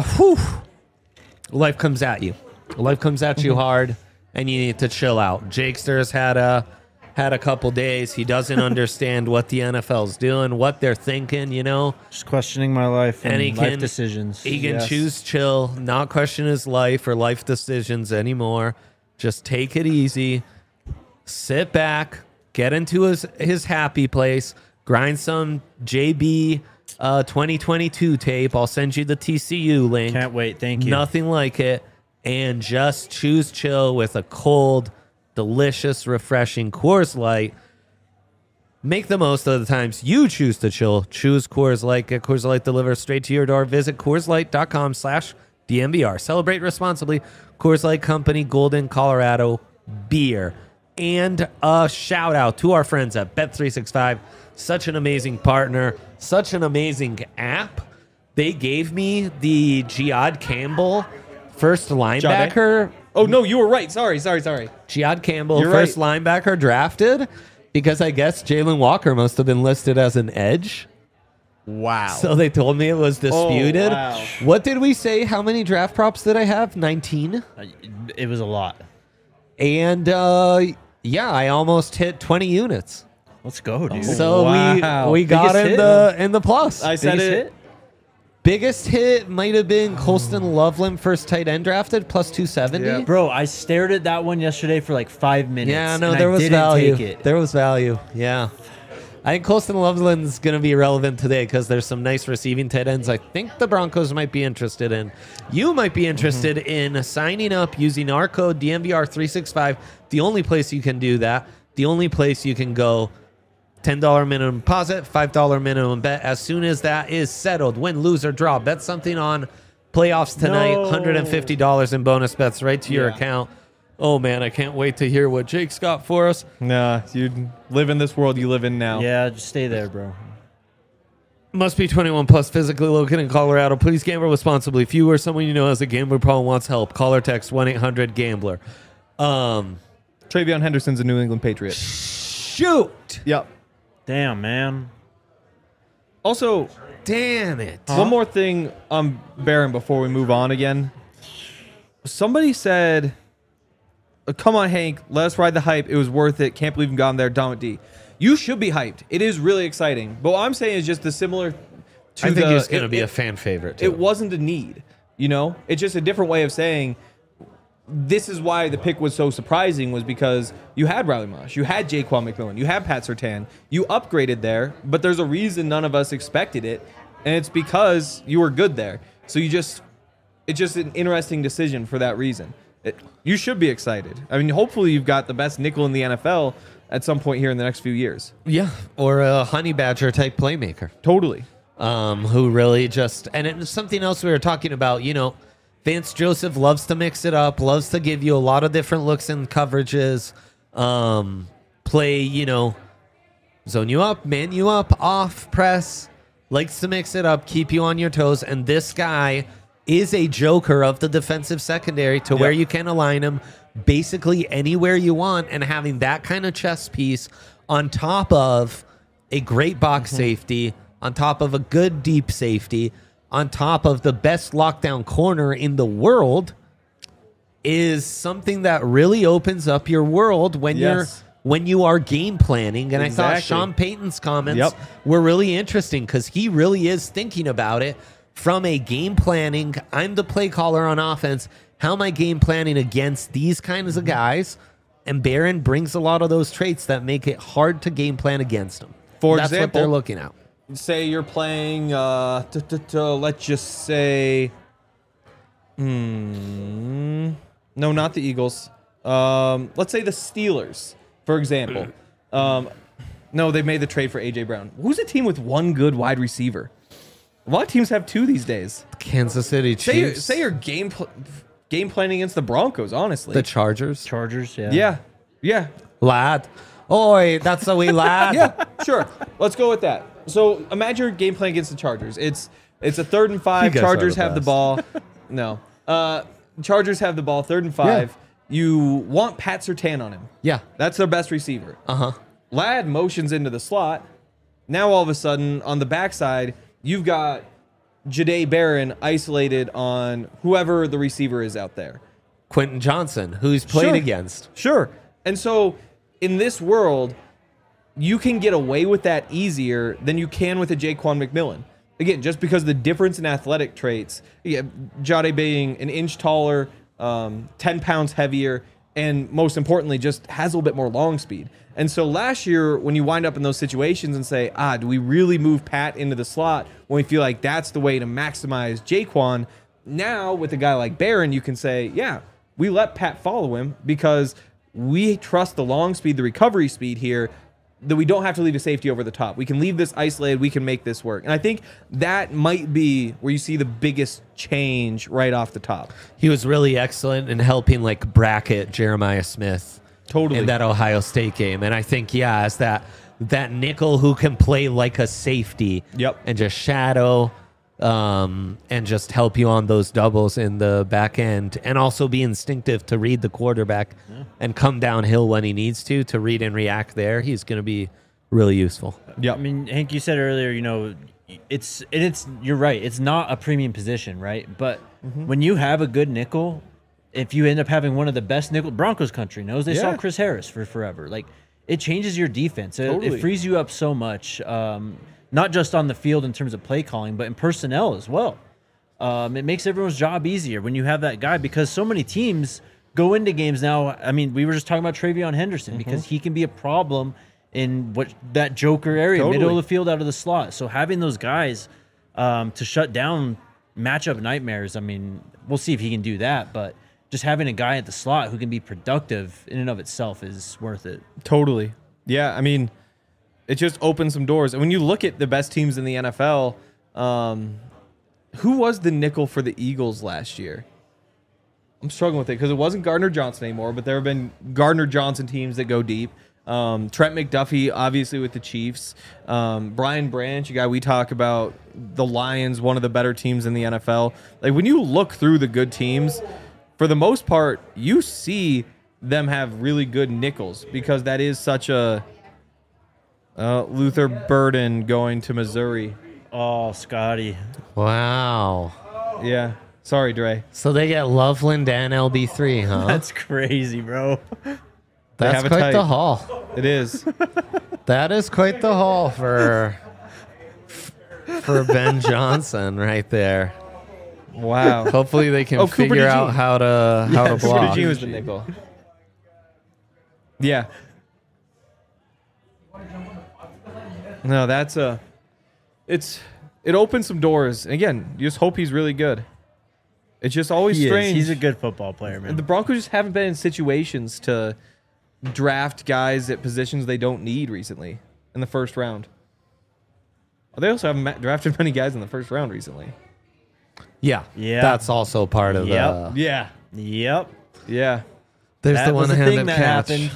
life comes at you. Life comes at you hard, and you need to chill out. Jakester's had a couple days. He doesn't understand what the NFL's doing, what they're thinking, Just questioning my life and life decisions. He can choose chill, not question his life or life decisions anymore. Just take it easy, sit back, get into his happy place, grind some JB 2022 tape. I'll send you the TCU link. Can't wait. Thank you. Nothing like it. And just choose chill with a cold, delicious, refreshing Coors Light. Make the most of the times you choose to chill. Choose Coors Light. Get Coors Light delivered straight to your door. Visit CoorsLight.com/DNVR. Celebrate responsibly. Coors Light Company, Golden, Colorado beer. And a shout out to our friends at Bet365. Such an amazing partner. Such an amazing app. They gave me the Jihad Campbell first linebacker. Oh, no, you were right. Sorry. Jihad Campbell, You're first right. linebacker drafted, because I guess Jalen Walker must have been listed as an edge. Wow. So they told me it was disputed. Oh, wow. What did we say? How many draft props did I have? 19? It was a lot. And I almost hit 20 units. Let's go, dude. So Wow. we got Biggest in the plus. I said Biggest it. hit? Biggest hit might have been Colston Loveland, first tight end drafted, plus 270. Yeah. Bro, I stared at that one yesterday for like 5 minutes. Yeah, no, and there I was didn't value. Take it. There was value. Yeah. I think Colston Loveland's going to be relevant today because there's some nice receiving tight ends I think the Broncos might be interested in. You might be interested in signing up using our code DNVR365. The only place you can do that, the only place you can go, $10 minimum deposit, $5 minimum bet. As soon as that is settled, win, lose, or draw, bet something on playoffs tonight, No. $150 in bonus bets right to your account. Oh, man, I can't wait to hear what Jake's got for us. Nah, you live in this world you live in now. Yeah, just stay there, bro. Must be 21 plus, physically located in Colorado. Please gamble responsibly. If you or someone you know has a gambling problem wants help, call or text 1-800-GAMBLER. Travion Henderson's a New England Patriot. Shoot! Yep. Damn, man. Also, Damn it. one more thing on Barron before we move on again. Somebody said, come on, Hank, let us ride the hype. It was worth it. Can't believe you got him there. Dom D. You should be hyped. It is really exciting. But what I'm saying is just the similar to I think the, he's going to be a fan favorite, too. It wasn't a need, It's just a different way of saying this is why the pick was so surprising, was because you had Riley Mosh, you had Jaquan McMillan, you had Pat Surtain, you upgraded there, but there's a reason none of us expected it, and it's because you were good there. So it's just an interesting decision for that reason. You should be excited. I mean, hopefully you've got the best nickel in the NFL at some point here in the next few years. Yeah, or a honey badger type playmaker. Totally. Who really just, and it's something else we were talking about, Vance Joseph loves to mix it up, loves to give you a lot of different looks and coverages, play, zone you up, man you up, off, press, likes to mix it up, keep you on your toes, and this guy is a joker of the defensive secondary to where you can align him basically anywhere you want, and having that kind of chess piece on top of a great box safety, on top of a good deep safety, on top of the best lockdown corner in the world, is something that really opens up your world when you are game planning. And I thought Sean Payton's comments were really interesting because he really is thinking about it from a game planning. I'm the play caller on offense. How am I game planning against these kinds of guys? And Barron brings a lot of those traits that make it hard to game plan against them. That's what they're looking at. Say you're playing, let's just say, no, not the Eagles. Let's say the Steelers, for example. No, they made the trade for A.J. Brown. Who's a team with one good wide receiver? A lot of teams have two these days. Kansas City Chiefs. Say you're game planning against the Broncos, honestly. The Chargers. Yeah. Lad. Oi, that's the way, lad. Yeah, sure. Let's go with that. So imagine your game plan against the Chargers. It's a 3rd and 5. Chargers have the ball. No. Chargers have the ball, 3rd and 5. Yeah. You want Pat Surtain on him. Yeah. That's their best receiver. Uh-huh. Lad motions into the slot. Now all of a sudden, on the backside, you've got Jahdae Barron isolated on whoever the receiver is out there. Quentin Johnson, who's played against. Sure. And so in this world, you can get away with that easier than you can with a Jaquan McMillan. Again, just because the difference in athletic traits, Jahdae being an inch taller, 10 pounds heavier, and most importantly, just has a little bit more long speed. And so last year, when you wind up in those situations and say, do we really move Pat into the slot when we feel like that's the way to maximize Jaquan? Now, with a guy like Barron, you can say, yeah, we let Pat follow him because we trust the long speed, the recovery speed here, that we don't have to leave a safety over the top. We can leave this isolated. We can make this work. And I think that might be where you see the biggest change right off the top. He was really excellent in helping bracket Jeremiah Smith in that Ohio State game. And I think, as that nickel who can play like a safety and just shadow and just help you on those doubles in the back end, and also be instinctive to read the quarterback and come downhill when he needs to read and react there. He's going to be really useful. Yeah, I mean, Hank, you said earlier, it's you're right. It's not a premium position, right? But when you have a good nickel, if you end up having one of the best nickel, Broncos country knows they saw Chris Harris for forever. It changes your defense. It frees you up so much. Not just on the field in terms of play calling, but in personnel as well. It makes everyone's job easier when you have that guy, because so many teams go into games now. I mean, we were just talking about Travion Henderson because he can be a problem in that joker area, middle of the field, out of the slot. So having those guys to shut down matchup nightmares, I mean, we'll see if he can do that, but just having a guy at the slot who can be productive in and of itself is worth it. Totally. Yeah, I mean, it just opens some doors. And when you look at the best teams in the NFL, who was the nickel for the Eagles last year? I'm struggling with it because it wasn't Gardner Johnson anymore, but there have been Gardner Johnson teams that go deep. Trent McDuffie, obviously, with the Chiefs. Brian Branch, a guy we talk about, the Lions, one of the better teams in the NFL. When you look through the good teams, for the most part, you see them have really good nickels because that is such a... Luther Burden going to Missouri. Oh, Scotty. Wow. Yeah. Sorry, Dre. So they get Loveland and LB3, huh? That's crazy, bro. That's quite the haul. It is. That is quite the haul for Ben Johnson right there. Wow. Hopefully they can figure out how to block. Cooper DeJean was the nickel. Yeah. No, it opens some doors. And again, you just hope he's really good. It's just always strange. He's a good football player, man. The Broncos just haven't been in situations to draft guys at positions they don't need recently in the first round. They also haven't drafted many guys in the first round recently. Yeah. That's also part of the... Yeah. Yep. Yeah. There's that the one-handed that catch. happened.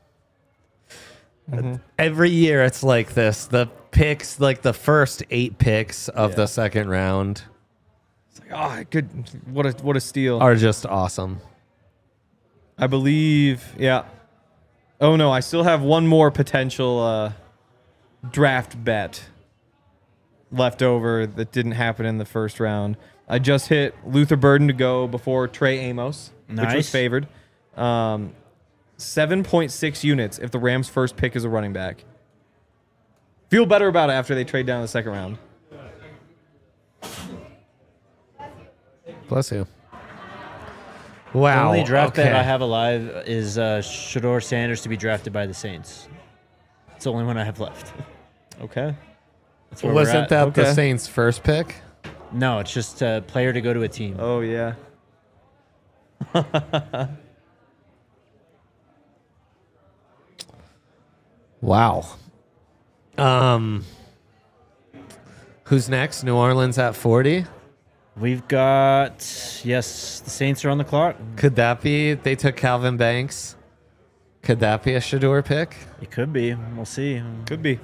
Every year it's like this. The picks, the first 8 picks of the second round, it's good. What a steal. are just awesome. I believe, yeah. Oh no, I still have one more potential draft bet left over that didn't happen in the first round. I just hit Luther Burden to go before Trey Amos, which was favored. 7.6 units if the Rams' first pick is a running back. Feel better about it after they trade down the second round. Bless you. The Wow. only draft bet I have alive is Shador Sanders to be drafted by the Saints. It's the only one I have left. Okay. That's where we're Wasn't at. that the Okay. Saints' first pick? No, it's just a player to go to a team. Oh, yeah. Wow. Who's next? New Orleans at 40? We've got, yes, the Saints are on the clock. Could that be? They took Calvin Banks. Could that be a Shador pick? It could be. We'll see. Could be.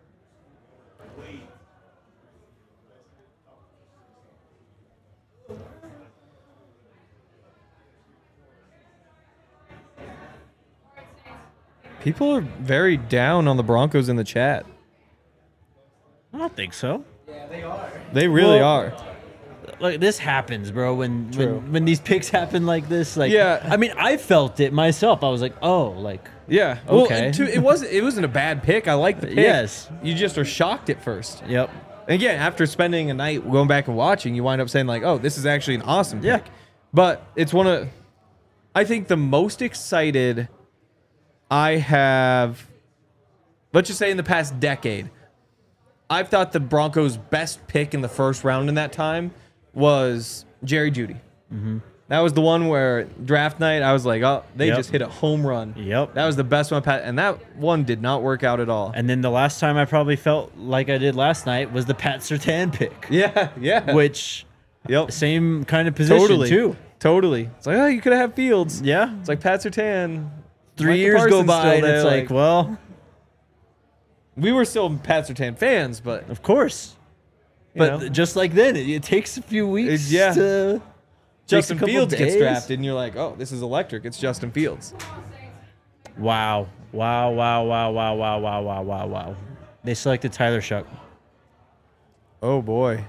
People are very down on the Broncos in the chat. I don't think so. They really Well, are. Like, this happens, bro. True. When these picks happen like this, like, Yeah. I mean, I felt it myself. I was like, oh, like, Yeah. Okay. Well, it wasn't a bad pick. I like the pick. Yes. You just are shocked at first. yep. And again, after spending a night going back and watching, you wind up saying like, "Oh, this is actually an awesome Yeah. pick." But it's one of, I think, the most excited I have. Let's just say in the past decade, I've thought the Broncos' best pick in the first round in that time was Jerry Jeudy. Mm-hmm. That was the one where draft night I was like, "Oh, they Yep. just hit a home run." Yep. That was the best one, and that one did not work out at all. And then the last time I probably felt like I did last night was the Pat Surtain pick. Yeah, yeah. Which, Yep. same kind of position, Totally. too. Totally. It's like, oh, you could have Fields. Yeah. It's like Pat Surtain. 3 Micah years go Parsons by, still and there, it's like, well, we were still Pat Surtain fans, but of course. you But know, just like then, it takes a few weeks yeah. to Justin takes a couple Fields gets days. drafted, and you're like, oh, this is electric. It's Justin Fields. Wow. Wow, wow, wow, wow, wow, wow, wow, wow, wow. They selected Tyler Shuck. Oh boy.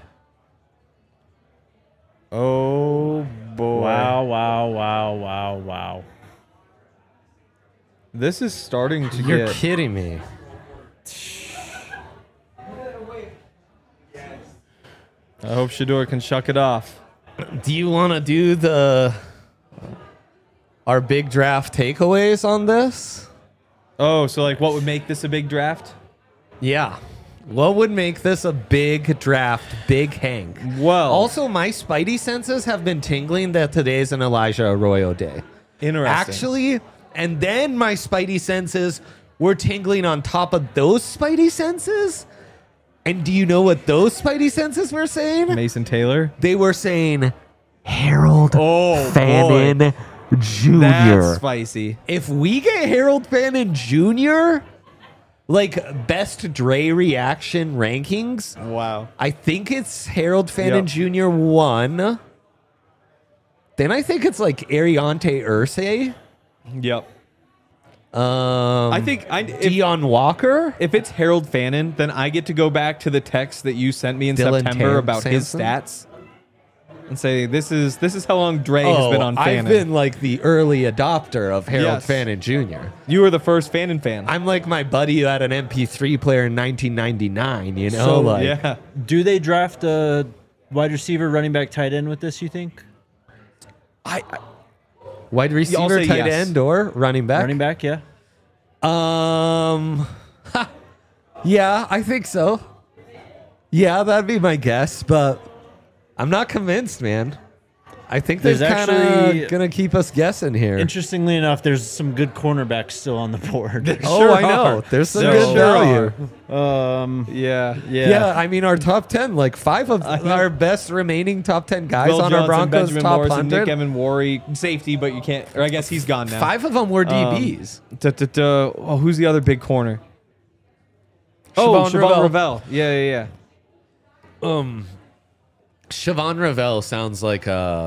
Oh boy. Wow, wow, wow, wow, wow. This is starting to You're get. kidding me. I hope Shador can shuck it off. Do you want to do our big draft takeaways on this? Oh, so like, what would make this a big draft? Yeah. What would make this a big draft, big Hank? Well, Also, my spidey senses have been tingling that today's an Elijah Arroyo day. interesting. Actually, and then my spidey senses were tingling on top of those spidey senses. And do you know what those spidey senses were saying? Mason Taylor. They were saying Harold Oh, Fannin Jr. That's spicy. If we get Harold Fannin Jr., like best Dre reaction rankings, Wow. I think it's Harold Fannin Yep. Jr. 1. Then I think it's like Ariante Ursay. Yep. I think Dion Walker. if it's Harold Fannin, then I get to go back to the text that you sent me in Dylan September about his Sampson? stats and say this is how long Dre has been on Fannin. I've been like the early adopter of Harold Yes. Fannin Jr. You were the first Fannin fan. I'm like my buddy who had an MP3 player in 1999, you know? So, like, yeah. Do they draft a wide receiver, running back, tight end with this, you think? wide I'll receiver, say tight yes. end, or running back? Running back, yeah. Yeah, I think so. Yeah, that'd be my guess, but I'm not convinced, man. I think they're There's kind actually- of gonna keep us guessing here. Interestingly enough, there's some good cornerbacks still on the board. Oh, Sure I know. are. There's some There good sure value. Yeah. Yeah. I mean, our top 10, like 5 of our best remaining top 10 guys Will on Johnson, our Broncos Benjamin top Morrison, 100. Nick Evan Worry, safety, but you can't. Or I guess he's gone now. 5 of them were DBs. Oh, who's the other big corner? Siobhan Siobhan Ravel. Ravel. Yeah. Siobhan Ravel sounds like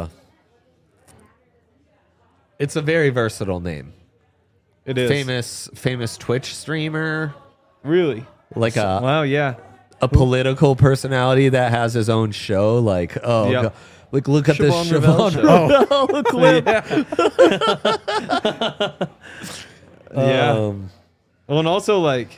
it's a very versatile name. It is. Famous Twitch streamer. Really? like a Wow, yeah. political personality that has his own show. Like, oh, Yep. like look at this Siobhan Siobhan Rivell clip. Yeah. Well, and also like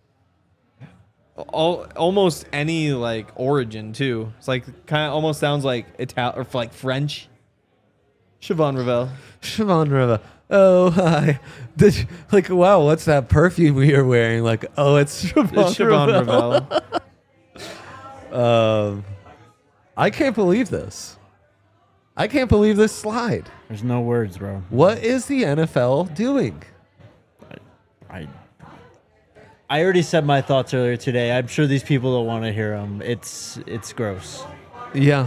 almost any like origin too. It's like kind of almost sounds like Italian or like French. Siobhan Rivell. Siobhan Rivell. Oh, hi. Like, wow, what's that perfume you're wearing? Like, oh, it's Siobhan, It's Siobhan Rivell. Rivell. I can't believe this. I can't believe this slide. There's no words, bro. What is the NFL doing? I already said my thoughts earlier today. I'm sure these people don't want to hear them. It's gross. Yeah.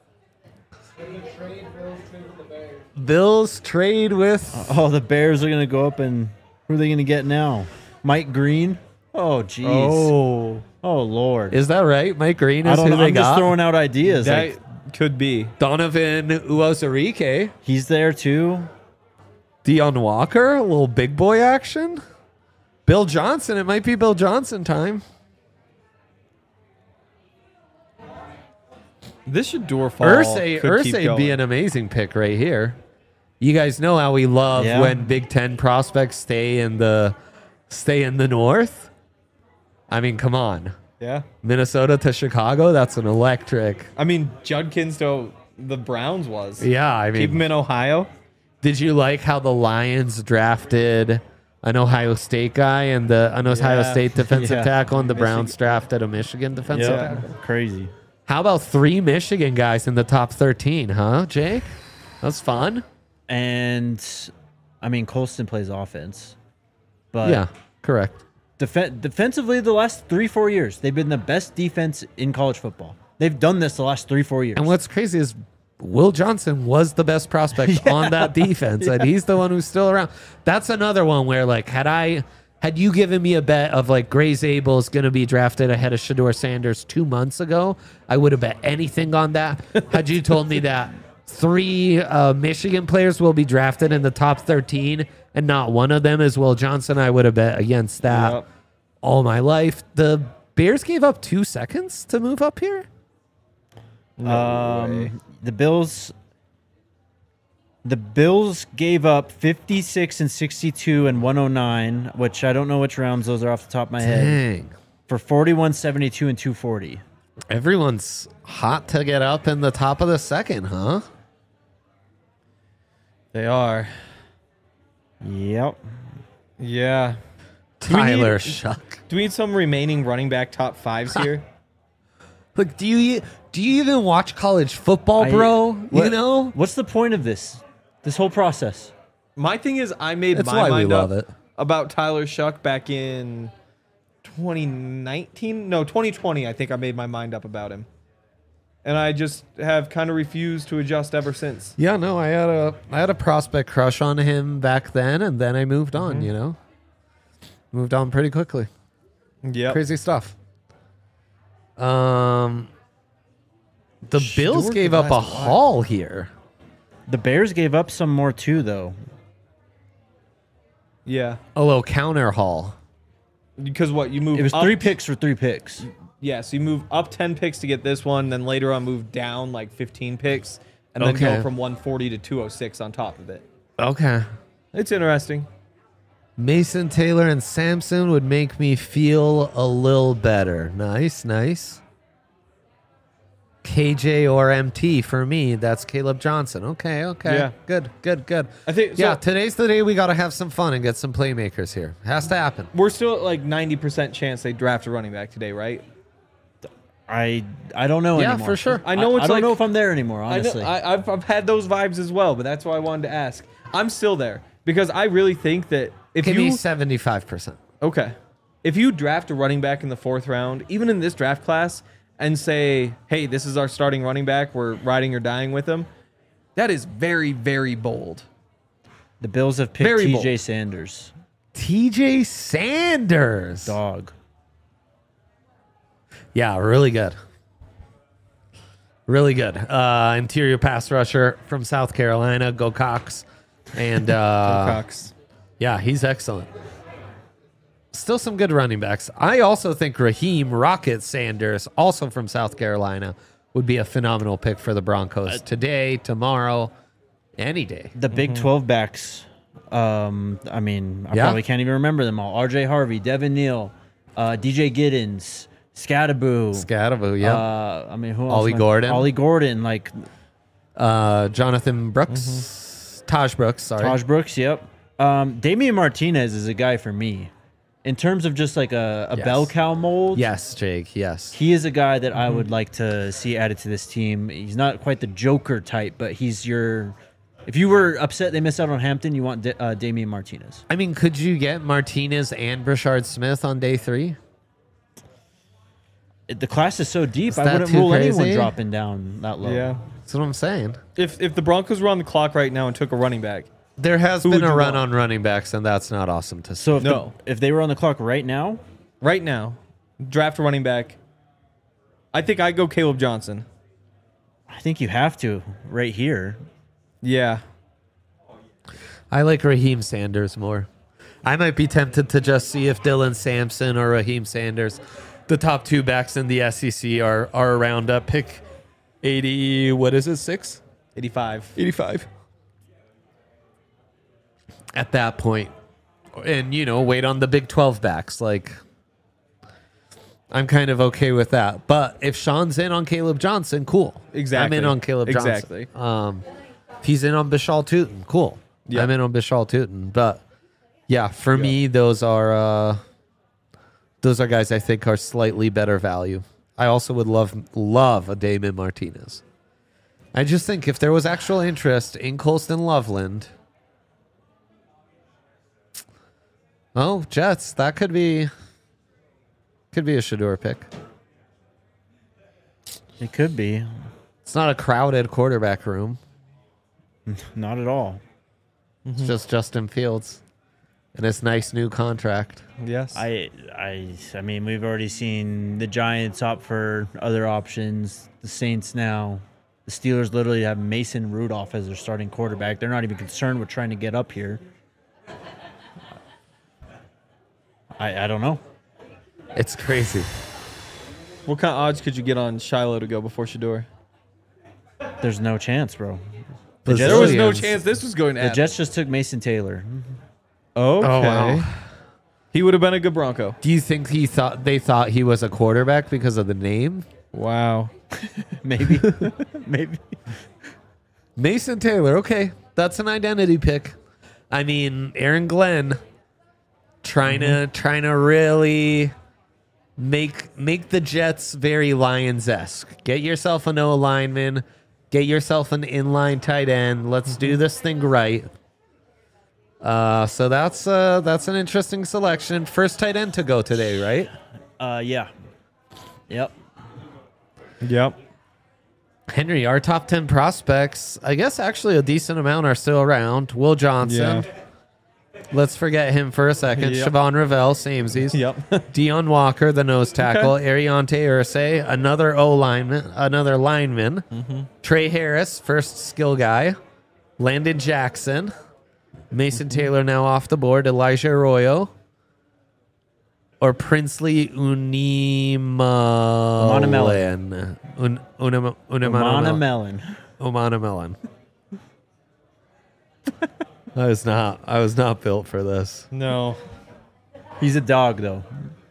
Bills trade with... Oh, the Bears are gonna go up, and who are they gonna get now? Mike Green. Oh, jeez. Oh, Lord. Is that right? Mike Green I is don't who know. they I'm got? just throwing out ideas. That Like, could be. Donovan Uwazurike. he's there too. Deion Walker. A little big boy action. Bill Johnson. It might be Bill Johnson time. This Shador fall Irsay could keep be going. an amazing pick right here. You guys know how we love Yeah. when Big Ten prospects stay in the North. I mean, come on. Yeah. Minnesota to Chicago. That's an electric. I mean, Judkins to the Browns was. Yeah, I Keep him mean, in Ohio. did you like how the Lions drafted an Ohio State guy and an Ohio Yeah. State defensive Yeah. tackle, and the Browns drafted a Michigan defensive Yeah. tackle? Crazy. How about 3 Michigan guys in the top 13, huh, Jake? That's fun. And I mean, Colston plays offense, but Yeah, correct. defensively, the last 3-4 years, they've been the best defense in college football. They've done this the last 3-4 years. And what's crazy is Will Johnson was the best prospect on that defense, and he's the one who's still around. That's another one where, like, had you given me a bet of like Gray Zabel is going to be drafted ahead of Shador Sanders 2 months ago, I would have bet anything on that. Had you told me that 3 Michigan players will be drafted in the top 13 and not one of them is Will Johnson, I would have bet against that Yep. all my life. The Bears gave up 2 seconds to move up here. The Bills gave up 56 and 62 and 109, which I don't know which rounds those are off the top of my head, Dang. for 41, 72, and 240. Everyone's hot to get up in the top of the second, huh? They are. Yep. Yeah. Tyler Shuck. Do we need some remaining running back top 5s here? Look, do you even watch college football, bro? You know? What's the point of this whole process? My thing is, I made That's my why we mind love up it. about Tyler Shuck back in 2019. No, 2020. I think I made my mind up about him, and I just have kind of refused to adjust ever since. Yeah, no, I had a prospect crush on him back then, and then I moved on, you know? Moved on pretty quickly. Yeah. Crazy stuff. The Bills gave up a haul here. The Bears gave up some more too, though. Yeah. A little counter haul. Because what you move? It was up, 3 picks for 3 picks. Yeah. So you move up 10 picks to get this one, then later on move down like 15 picks, and then Okay. go from 140 to 206 on top of it. Okay. It's interesting. Mason Taylor and Samson would make me feel a little better. Nice, nice. KJ or MT for me. That's Caleb Johnson. Okay, okay. Yeah. Good, good, good. I think Yeah, so. today's the day we got to have some fun and get some playmakers here. Has to happen. We're still at like 90% chance they draft a running back today, right? I don't know Yeah, anymore. for sure. I know it's I don't like- know if I'm there anymore, honestly. I know, I've had those vibes as well, but that's why I wanted to ask. I'm still there because I really think that if Give me you 75%. okay, if you draft a running back in the 4th round, even in this draft class, and say, "Hey, this is our starting running back. We're riding or dying with him," that is very, very bold. The Bills have picked Very bold. TJ Sanders. TJ Sanders. Dog. Yeah, really good. Really good. Interior pass rusher from South Carolina. Go Cox. And Cox. yeah, he's excellent. still some good running backs. I also think Raheem Rocket Sanders, also from South Carolina, would be a phenomenal pick for the Broncos today, tomorrow, any day. The Big 12 backs. I probably can't even remember them all. R.J. Harvey, Devin Neal, DJ Giddens, Scadaboo. Yeah. Who else? Ollie Gordon. Ollie Gordon, Jonathan Brooks. Taj Brooks, sorry. Taj Brooks, yep. Damian Martinez is a guy for me. In terms of just like a bell cow mold. Yes, Jake, yes. He is a guy that I would like to see added to this team. He's not quite the Joker type, but he's your... If you were upset they missed out on Hampton, you want Damian Martinez. I mean, could you get Martinez and Brashard Smith on day 3? The class is so deep, Is I that wouldn't too rule crazy? anyone dropping down that low. Yeah. That's what I'm saying. If the Broncos were on the clock right now and took a running back, There has Who been would a you run want? on running backs, and that's not awesome to see. So if they were on the clock right now, draft a running back, I think I'd go Caleb Johnson. I think you have to right here. Yeah. I like Raheem Sanders more. I might be tempted to just see if Dylan Sampson or Raheem Sanders, the top 2 backs in the SEC, are around pick 80. What is it? 6? 85. 85. At that point, and wait on the Big 12 backs. I'm kind of okay with that. But if Sean's in on Caleb Johnson, cool. Exactly. I'm in on Caleb Johnson. Exactly. If he's in on Bishal Tootin, cool. Yep. I'm in on Bishal Tootin. But yeah, for me, those are guys I think are slightly better value. I also would love a Damon Martinez. I just think if there was actual interest in Colston Loveland, Jets, that could be a Shador pick. It could be. It's not a crowded quarterback room. Not at all. It's just Justin Fields and his nice new contract. Yes. I mean, we've already seen the Giants opt for other options. The Saints now. The Steelers literally have Mason Rudolph as their starting quarterback. They're not even concerned with trying to get up here. I don't know. It's crazy. What kind of odds could you get on Shiloh to go before Shador? There's no chance, bro. There was no Bazillions. chance this was going to The happen. Jets just took Mason Taylor. Okay. Oh, wow. He would have been a good Bronco. Do you think they thought he was a quarterback because of the name? Wow. Maybe. Maybe. Mason Taylor, okay. That's an identity pick. I mean, Aaron Glenn trying to really make the Jets very Lions-esque. Get yourself an O lineman, get yourself an inline tight end. Let's do this thing right. So that's an interesting selection. First tight end to go today, right? Yeah. Yep. Yep. Henry, our top 10 prospects, I guess actually a decent amount are still around. Will Johnson. Yeah. Let's forget him for a second. Yep. Siobhan Ravel, samesies. Yep. Dion Walker, the nose tackle. Ariante Ursay, another another lineman. Trey Harris, first skill guy. Landon Jackson. Mason Taylor now off the board. Elijah Arroyo. Or Princely Unimelon. Umana Melon. Umana Melon. I was not built for this. No. He's a dog, though.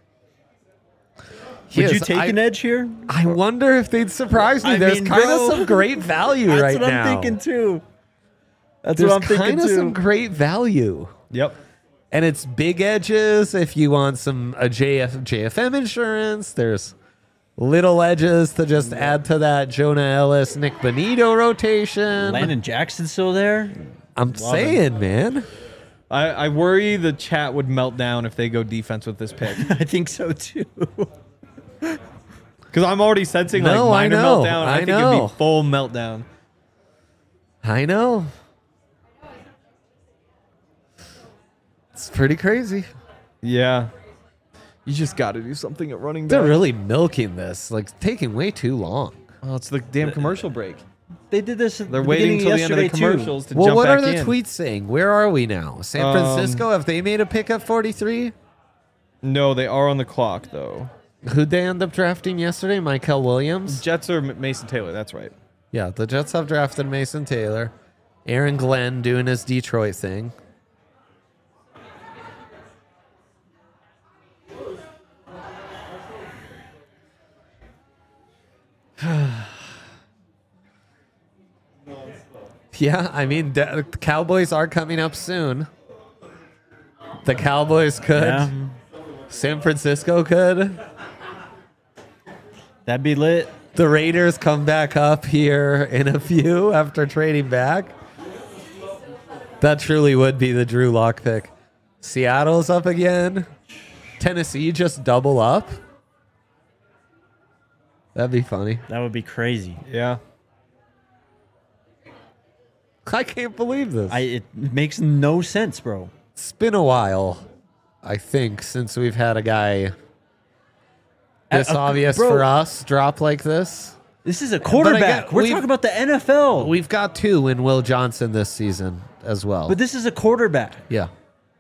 Would you take an edge here? I wonder if they'd surprise me. There's kind of some great value right now. That's what I'm thinking, too. That's There's what I'm thinking, kind of too. some great value. Yep. And it's big edges if you want some JFM insurance. There's little edges to just add to that Jonah Ellis, Nick Bonito rotation. Landon Jackson's still there? I'm saying, man. I worry the chat would melt down if they go defense with this pick. I think so, too. Because I'm already sensing like No, I minor know. meltdown. I think it'd know. be full meltdown. I know. It's pretty crazy. Yeah. You just got to do something at running back. They're really milking this, like taking way too long. Oh, it's the damn commercial break. They did this at They're the waiting beginning until the end of the yesterday, commercials to Well, jump what back are the in. tweets saying? Where are we now? San Francisco? Have they made a pick at 43? No, they are on the clock, though. Who'd they end up drafting yesterday? Michael Williams? Jets or Mason Taylor, that's right. Yeah, the Jets have drafted Mason Taylor. Aaron Glenn doing his Detroit thing. Yeah, I mean, the Cowboys are coming up soon. The Cowboys could. Yeah. San Francisco could. That'd be lit. The Raiders come back up here in a few after trading back. That truly would be the Drew Lock pick. Seattle's up again. Tennessee just double up. That'd be funny. That would be crazy. Yeah. I can't believe this. It makes no sense, bro. It's been a while, I think, since we've had a guy this obvious bro. for us drop like this. This is a quarterback. We're we've- talking about the NFL. We've got two in Will Johnson this season as well. But this is a quarterback. Yeah.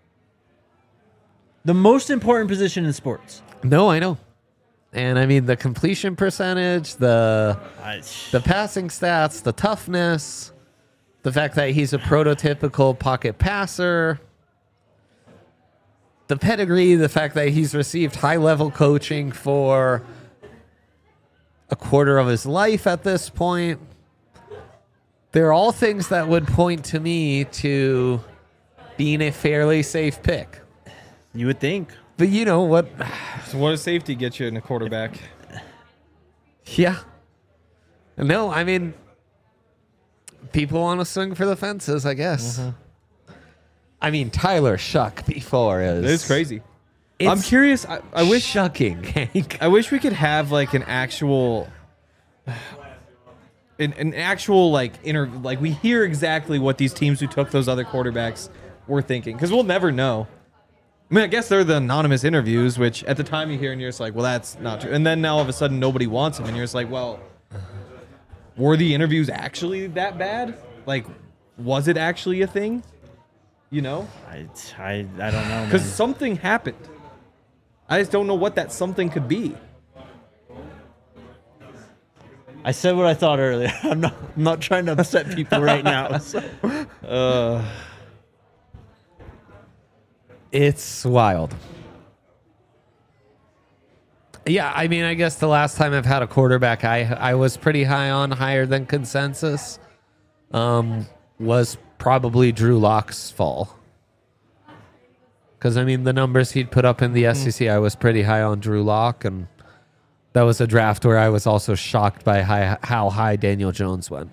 The most important position in sports. No, I know. And I mean the completion percentage, the passing stats, the toughness, the fact that he's a prototypical pocket passer, the pedigree, the fact that he's received high-level coaching for a quarter of his life at this point. They're all things that would point to me to being a fairly safe pick. You would think. But you know what? So what does safety get you in a quarterback? Yeah. No, I mean, people want to swing for the fences, I guess. I mean, Tyler Shuck before is... It is crazy. It's I'm curious. I wish shocking, Hank. I wish we could have like an actual, an actual like like we hear exactly what these teams who took those other quarterbacks were thinking, because we'll never know. I mean, I guess they're the anonymous interviews, which at the time you hear and you're just like, well, that's not true. And then now all of a sudden nobody wants him, and you're just like, well, were the interviews actually that bad? Like, was it actually a thing? You know? I don't know. Because man. something happened. I just don't know what that something could be. I said what I thought earlier. I'm not trying to upset people right now. So. It's wild. Yeah, I mean, I guess the last time I've had a quarterback I was pretty high on, higher than consensus, was probably Drew Lock's fall. Because, I mean, the numbers he'd put up in the SEC, I was pretty high on Drew Lock, and that was a draft where I was also shocked by how high Daniel Jones went.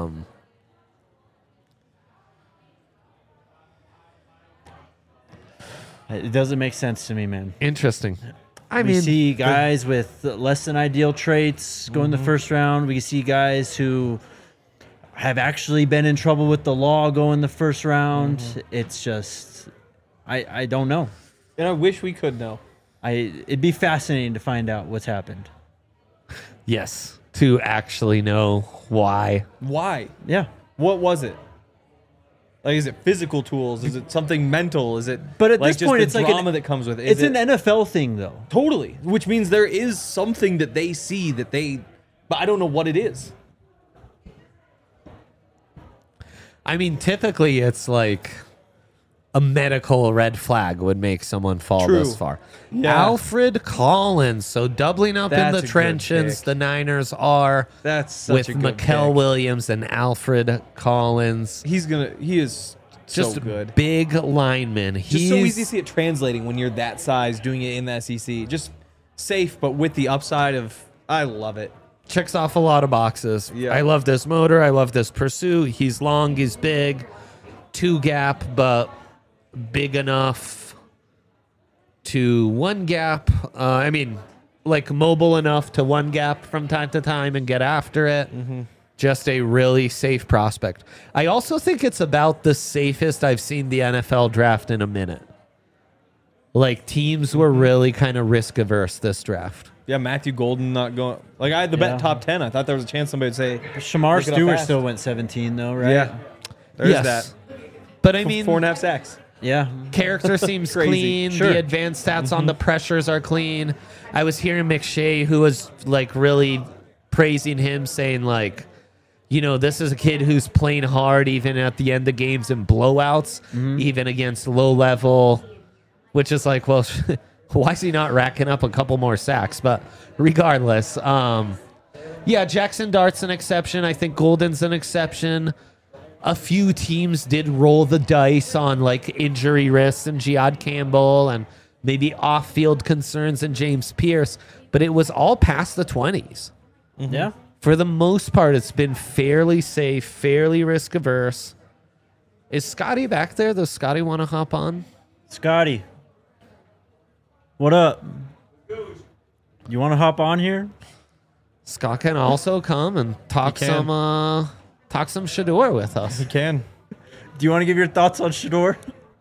It doesn't make sense to me, man. Interesting. I We mean, see guys with less than ideal traits go in the first round. We see guys who have actually been in trouble with the law go in the first round. It's just, I don't know. And I wish we could know. It'd be fascinating to find out what's happened. yes, to actually know why. Why? Yeah. What was it? Like, is it physical tools? Is it something mental? Is it? But at like this just point, the it's like drama that comes with it. It's an NFL thing, though. Totally, which means there is something that they see that they, but I don't know what it is. I mean, typically it's like a medical red flag would make someone fall True. this far. Yeah. Alfred Collins. So doubling up That's in a the good trenches, pick. the Niners are That's such with a good Mikael pick. Williams and Alfred Collins. He is Just so good. big lineman. Just so easy to see it translating when you're that size, doing it in the SEC. Just safe, but with the upside of, I love it. Checks off a lot of boxes. Yeah. I love this motor. I love this pursuit. He's long. He's big. 2 gap, but big enough to 1 gap. I mean, like mobile enough to 1 gap from time to time and get after it. Just a really safe prospect. I also think it's about the safest I've seen the NFL draft in a minute. Like, teams were really kind of risk averse this draft. Yeah, Matthew Golden not going. Like, I had the Yeah. bet top 10. I thought there was a chance somebody would say, Shamar Look it up Stewart fast. still went 17, though, right? yeah, there's Yes. that. But I mean, 4.5 sacks. Yeah. Character seems clean. Sure. The advanced stats on the pressures are clean. I was hearing McShay, who was like really praising him, saying like, you know, this is a kid who's playing hard even at the end of games and blowouts, even against low level, which is like, well, why is he not racking up a couple more sacks? But regardless, yeah, Jackson Dart's an exception. I think Golden's an exception. A few teams did roll the dice on like injury risks and Jihad Campbell and maybe off-field concerns and James Pierce, but it was all past the 20s. Yeah. For the most part, it's been fairly safe, fairly risk-averse. Is Scotty back there? Does Scotty want to hop on? Scotty. What up? You want to hop on here? Scott can also come and talk some Shador with us. You can. Do you want to give your thoughts on Shador?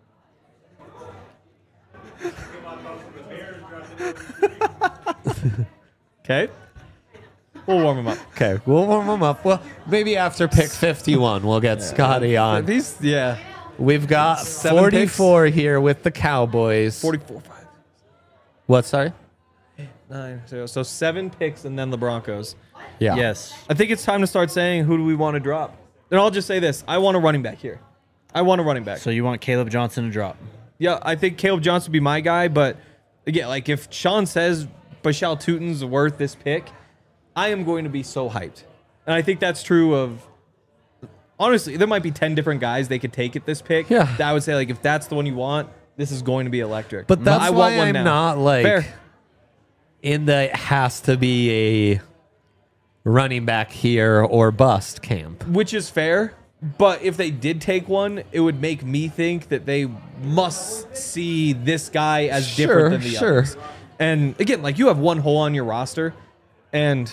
Okay. We'll warm him up. Okay, we'll warm him up. Well, maybe after pick 51, we'll get Scotty on. Yeah. We've got 7 44 here with the Cowboys. 44, 5, What, sorry? 9. So 7 picks and then the Broncos. Yeah. Yes. I think it's time to start saying who do we want to drop. And I'll just say this. I want a running back here. I want a running back. So you want Caleb Johnson to drop? Yeah, I think Caleb Johnson would be my guy. But again, like if Sean says Bashal Tutin's worth this pick, I am going to be so hyped. And I think that's true of, honestly, there might be 10 different guys they could take at this pick. Yeah. That I would say, like, if that's the one you want, this is going to be electric. But that's I why want one I'm now. not like Fair. in the it has to be a running back here or bust camp. Which is fair. But if they did take one, it would make me think that they must see this guy as different than the others. And again, like you have one hole on your roster. And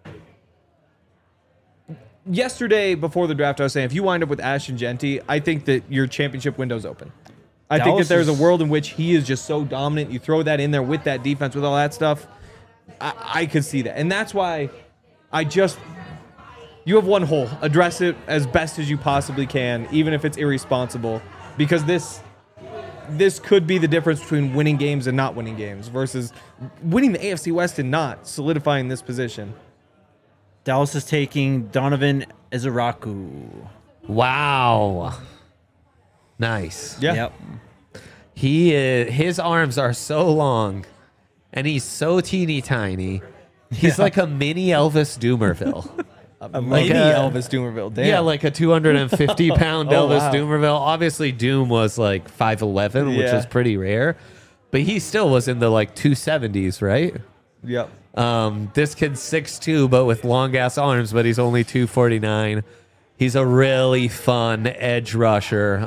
yesterday before the draft, I was saying if you wind up with Ashton Genty, I think that your championship window's open. I think that there's a world in which he is just so dominant. You throw that in there with that defense, with all that stuff. I could see that. And that's why you have one hole. Address it as best as you possibly can, even if it's irresponsible. Because this could be the difference between winning games and not winning games versus winning the AFC West and not solidifying this position. Dallas is taking Donovan Ezeraku. Wow. Nice. Yeah. Yep. His arms are so long and he's so teeny tiny. He's like a mini Elvis Doomerville. Mini Elvis Doomerville. Damn. Yeah, like a 250-pound Oh, Elvis wow. Doomerville. Obviously, Doom was like 5'11", which Yeah. is pretty rare. But he still was in the like 270s, right? Yep. This kid's 6'2", but with long-ass arms, but he's only 249. He's a really fun edge rusher.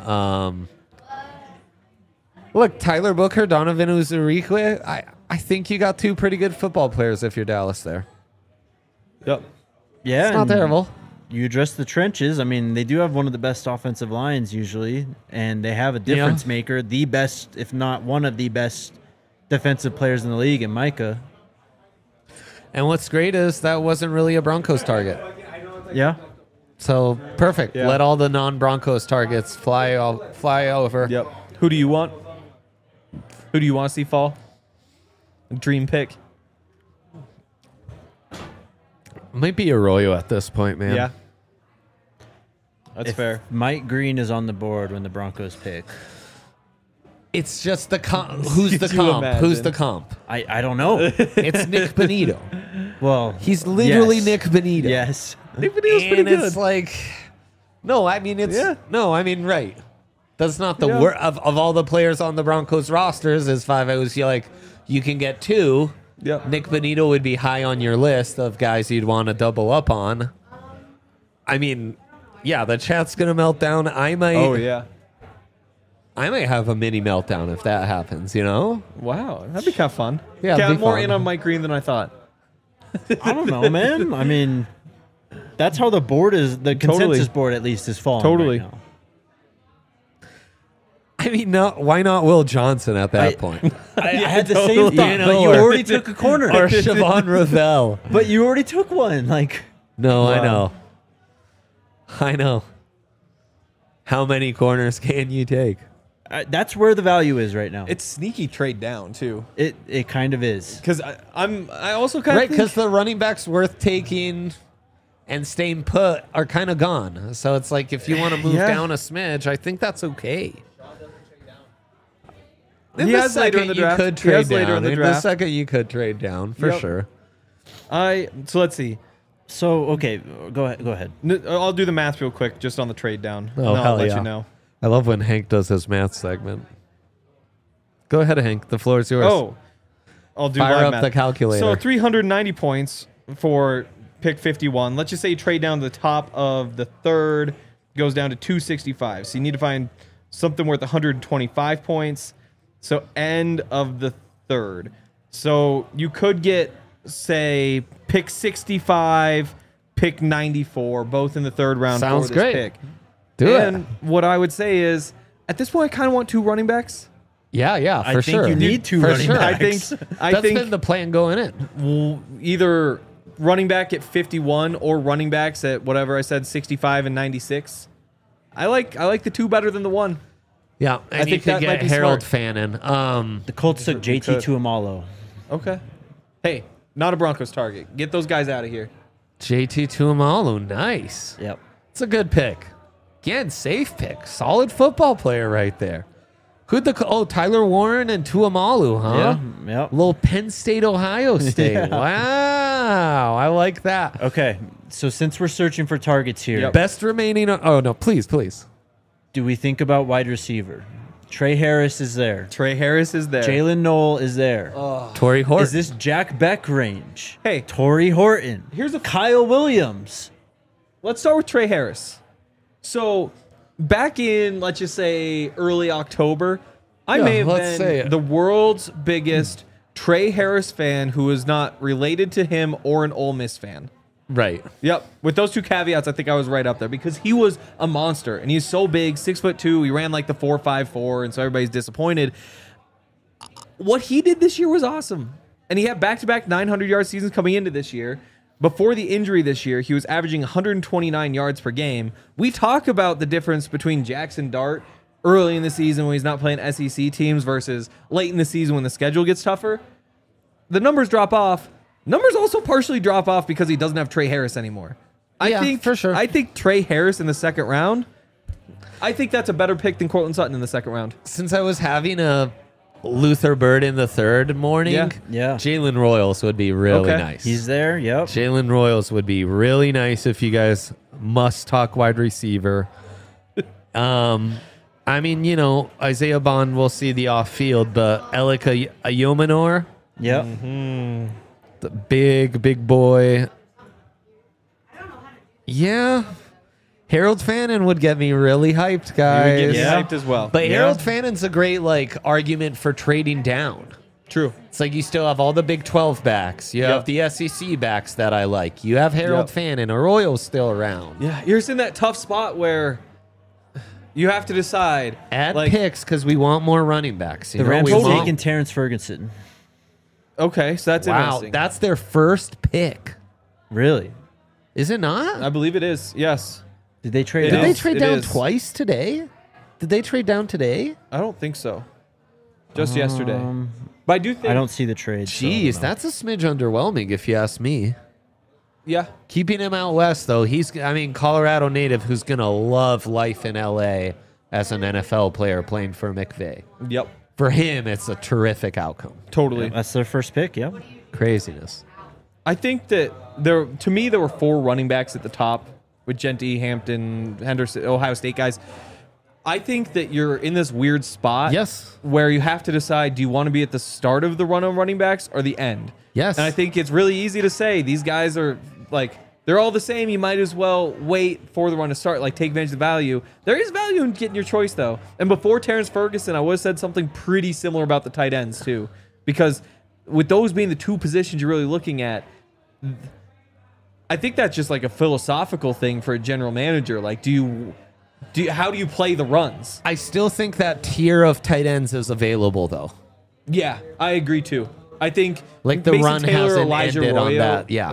Look, Tyler Booker, Donovan Uzurike, I think you got two pretty good football players if you're Dallas there. Yep. Yeah. It's not and terrible. You address the trenches. I mean, they do have one of the best offensive lines usually, and they have a difference maker, the best, if not one of the best defensive players in the league, in Micah. And what's great is that wasn't really a Broncos target. Yeah. So perfect. Yeah. Let all the non-Broncos targets fly over. Yep. Who do you want? Who do you want to see fall? Dream pick. Might be Arroyo at this point, man. Yeah. That's If fair. Mike Green is on the board when the Broncos pick. It's just the comp. Who's the Could you comp? Who's imagine? the comp? I don't know. It's Nick Benito. Well, He's literally yes. Nick Benito. Yes. Nick Benito's pretty And good. it's like, no, I mean, right. That's not the Yeah. word of all the players on the Broncos rosters. Is five? I was like, you can get two. Yep. Nick Benito would be high on your list of guys you'd want to double up on. I mean, yeah, the chat's gonna melt down. I might. Oh, yeah. I might have a mini meltdown if that happens. You know? Wow. That'd be kind of fun. Yeah, Okay, it'd be I'm more fun. in on Mike Green than I thought. I don't know, man. I mean, that's how the board is. The consensus Totally. board, at least, is falling. Totally. Right now. I mean, no, why not Will Johnson at that point? I had the totally. same thought, You know, but you or- already took a corner. Or Siobhan Ravel. But you already took one. Like, No, I Wow. know. I know. How many corners can you take? That's where the value is right now. It's sneaky trade down too. It kind of is. Because I also kind of Right, because the running backs worth taking and staying put are kind of gone. So it's like if you want to move down a smidge, I think that's okay. In He the has later in second, the draft. you could He has trade later down. in the In the draft. second, you could trade down for Yep. sure. So let's see. So okay, go ahead. I'll do the math real quick just on the trade down. Oh, and I'll hell let yeah. you know. I love when Hank does his math segment. Go ahead, Hank. The floor is yours. Oh, I'll do Fire live up math. the calculator. So 390 points for pick 51. Let's just say you trade down to the top of the third, goes down to 265. So you need to find something worth 125 points. So end of the third. So you could get, say, pick 65, pick 94, both in the third round Sounds for this great. pick. Do and it. what I would say is, at this point, I kind of want 2 running backs. Yeah, I for think sure. you need 2 For running sure. backs. That's been the plan going in. Either running back at 51 or running backs at whatever I said, 65 and 96. I like the 2 better than the 1. Yeah, and I you think could that might get be Harold smart. Fannin. The Colts took You JT could. Tuamalo. Okay. Hey, not a Broncos target. Get those guys out of here. JT Tuamalo, nice. Yep. It's a good pick. Again, safe pick. Solid football player right there. Tyler Warren and Tuamalu, huh? Yeah. Yep. Little Penn State, Ohio State. Yeah. Wow. I like that. Okay. So since we're searching for targets here, Yep. Best remaining. Oh, no, please. do we think about wide receiver? Trey Harris is there. Trey Harris is there. Jalen Knoll is there. Torrey Horton. Is this Jack Beck range? Hey. Torrey Horton. Here's a- Kyle Williams. Let's start with Trey Harris. So back in, let's just say, early October, I Yeah, may have let's say been it. the world's biggest Trey Harris fan who is not related to him or an Ole Miss fan. Right. Yep. With those 2 caveats, I think I was right up there because he was a monster and he's so big, 6'2". He ran like the 4.54, and so everybody's disappointed. What he did this year was awesome, and he had back-to-back 900-yard seasons coming into this year. Before the injury this year, he was averaging 129 yards per game. We talk about the difference between Jackson Dart early in the season when he's not playing SEC teams versus late in the season when the schedule gets tougher. The numbers drop off. Numbers also partially drop off because he doesn't have Trey Harris anymore. Yeah, I think for sure. I think Trey Harris in the second round. I think that's a better pick than Cortland Sutton in the second round. Since I was having a Luther Bird in the third morning, Yeah. Jalen Royals would be really Okay. nice. He's there. Yep. Jalen Royals would be really nice if you guys must talk wide receiver. I mean, Isaiah Bond will see the off field, but Elika Ayomanor, Yep. the big boy. Yeah. Harold Fannin would get me really hyped, He guys. would get me Yeah. hyped as well. But Yeah. Harold Fannin's a great argument for trading down. True. It's like you still have all the Big 12 backs. You have Yep. the SEC backs that I like. You have Harold Yep. Fannin. Arroyo's still around. Yeah, you're just in that tough spot where you have to decide. Add like, picks because we want more running backs. The Rams we are want- taking Terrence Ferguson. Okay, so that's Wow, interesting. that's their first pick. Really? Is it not? I believe it is. Yes. Did they trade? It Did out? they is. trade It down is. twice today? Did they trade down today? I don't think so. Just yesterday. But I do think. I don't see the trade. so I Jeez, don't know. that's a smidge underwhelming if you ask me. Yeah. Keeping him out west, though, Colorado native who's going to love life in L.A. as an NFL player playing for McVay. Yep. For him, it's a terrific outcome. Totally. That's their first pick. Yep. Craziness. I think that there were 4 running backs at the top with Genty, Hampton, Henderson, Ohio State guys. I think that you're in this weird spot. Yes. Where you have to decide, do you want to be at the start of the run on running backs or the end? Yes. And I think it's really easy to say these guys are they're all the same. You might as well wait for the run to start, take advantage of the value. There is value in getting your choice though. And before Terrence Ferguson, I would have said something pretty similar about the tight ends too. Because with those being the 2 positions you're really looking at, I think that's just a philosophical thing for a general manager. How do you play the runs? I still think that tier of tight ends is available, though. Yeah, I agree too. I think The Mason run Taylor, hasn't Elijah ended on Arroyo, that. Yeah.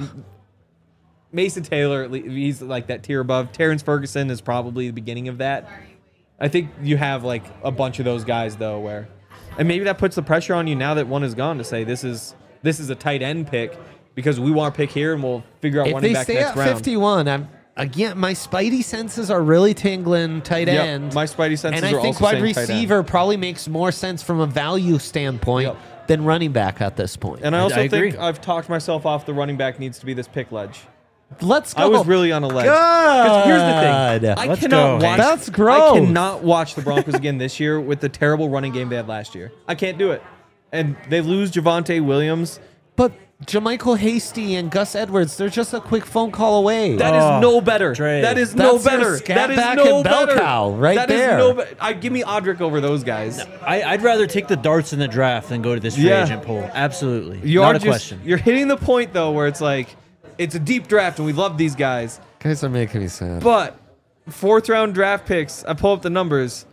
Mason Taylor, he's that tier above. Terrence Ferguson is probably the beginning of that. I think you have like a bunch of those guys though, where, and maybe that puts the pressure on you now that one is gone to say this is a tight end pick because we want to pick here and we'll figure out running back next round. If they stay at 51, again, my spidey senses are really tingling tight end. My spidey senses and are I think also wide receiver probably makes more sense from a value standpoint than running back at this point. And I also think I've talked myself off the running back needs to be this pick ledge. Let's go. I was really on a ledge. Good. Here's the thing. I cannot watch. That's gross. I cannot watch the Broncos again this year with the terrible running game they had last year. I can't do it. And they lose Javonte Williams. But Jermichael Hasty and Gus Edwards, they're just a quick phone call away. That is no better. Dre. That is no That's their better. scat That is back no and bell better. cow right That there. is no better. Give me Audric over those guys. I'd rather take the darts in the draft than go to this free agent pool. Absolutely. Not a question. You're hitting the point, though, where it's like, it's a deep draft, and we love these guys. Guys are making me sad. But fourth-round draft picks, I pull up the numbers.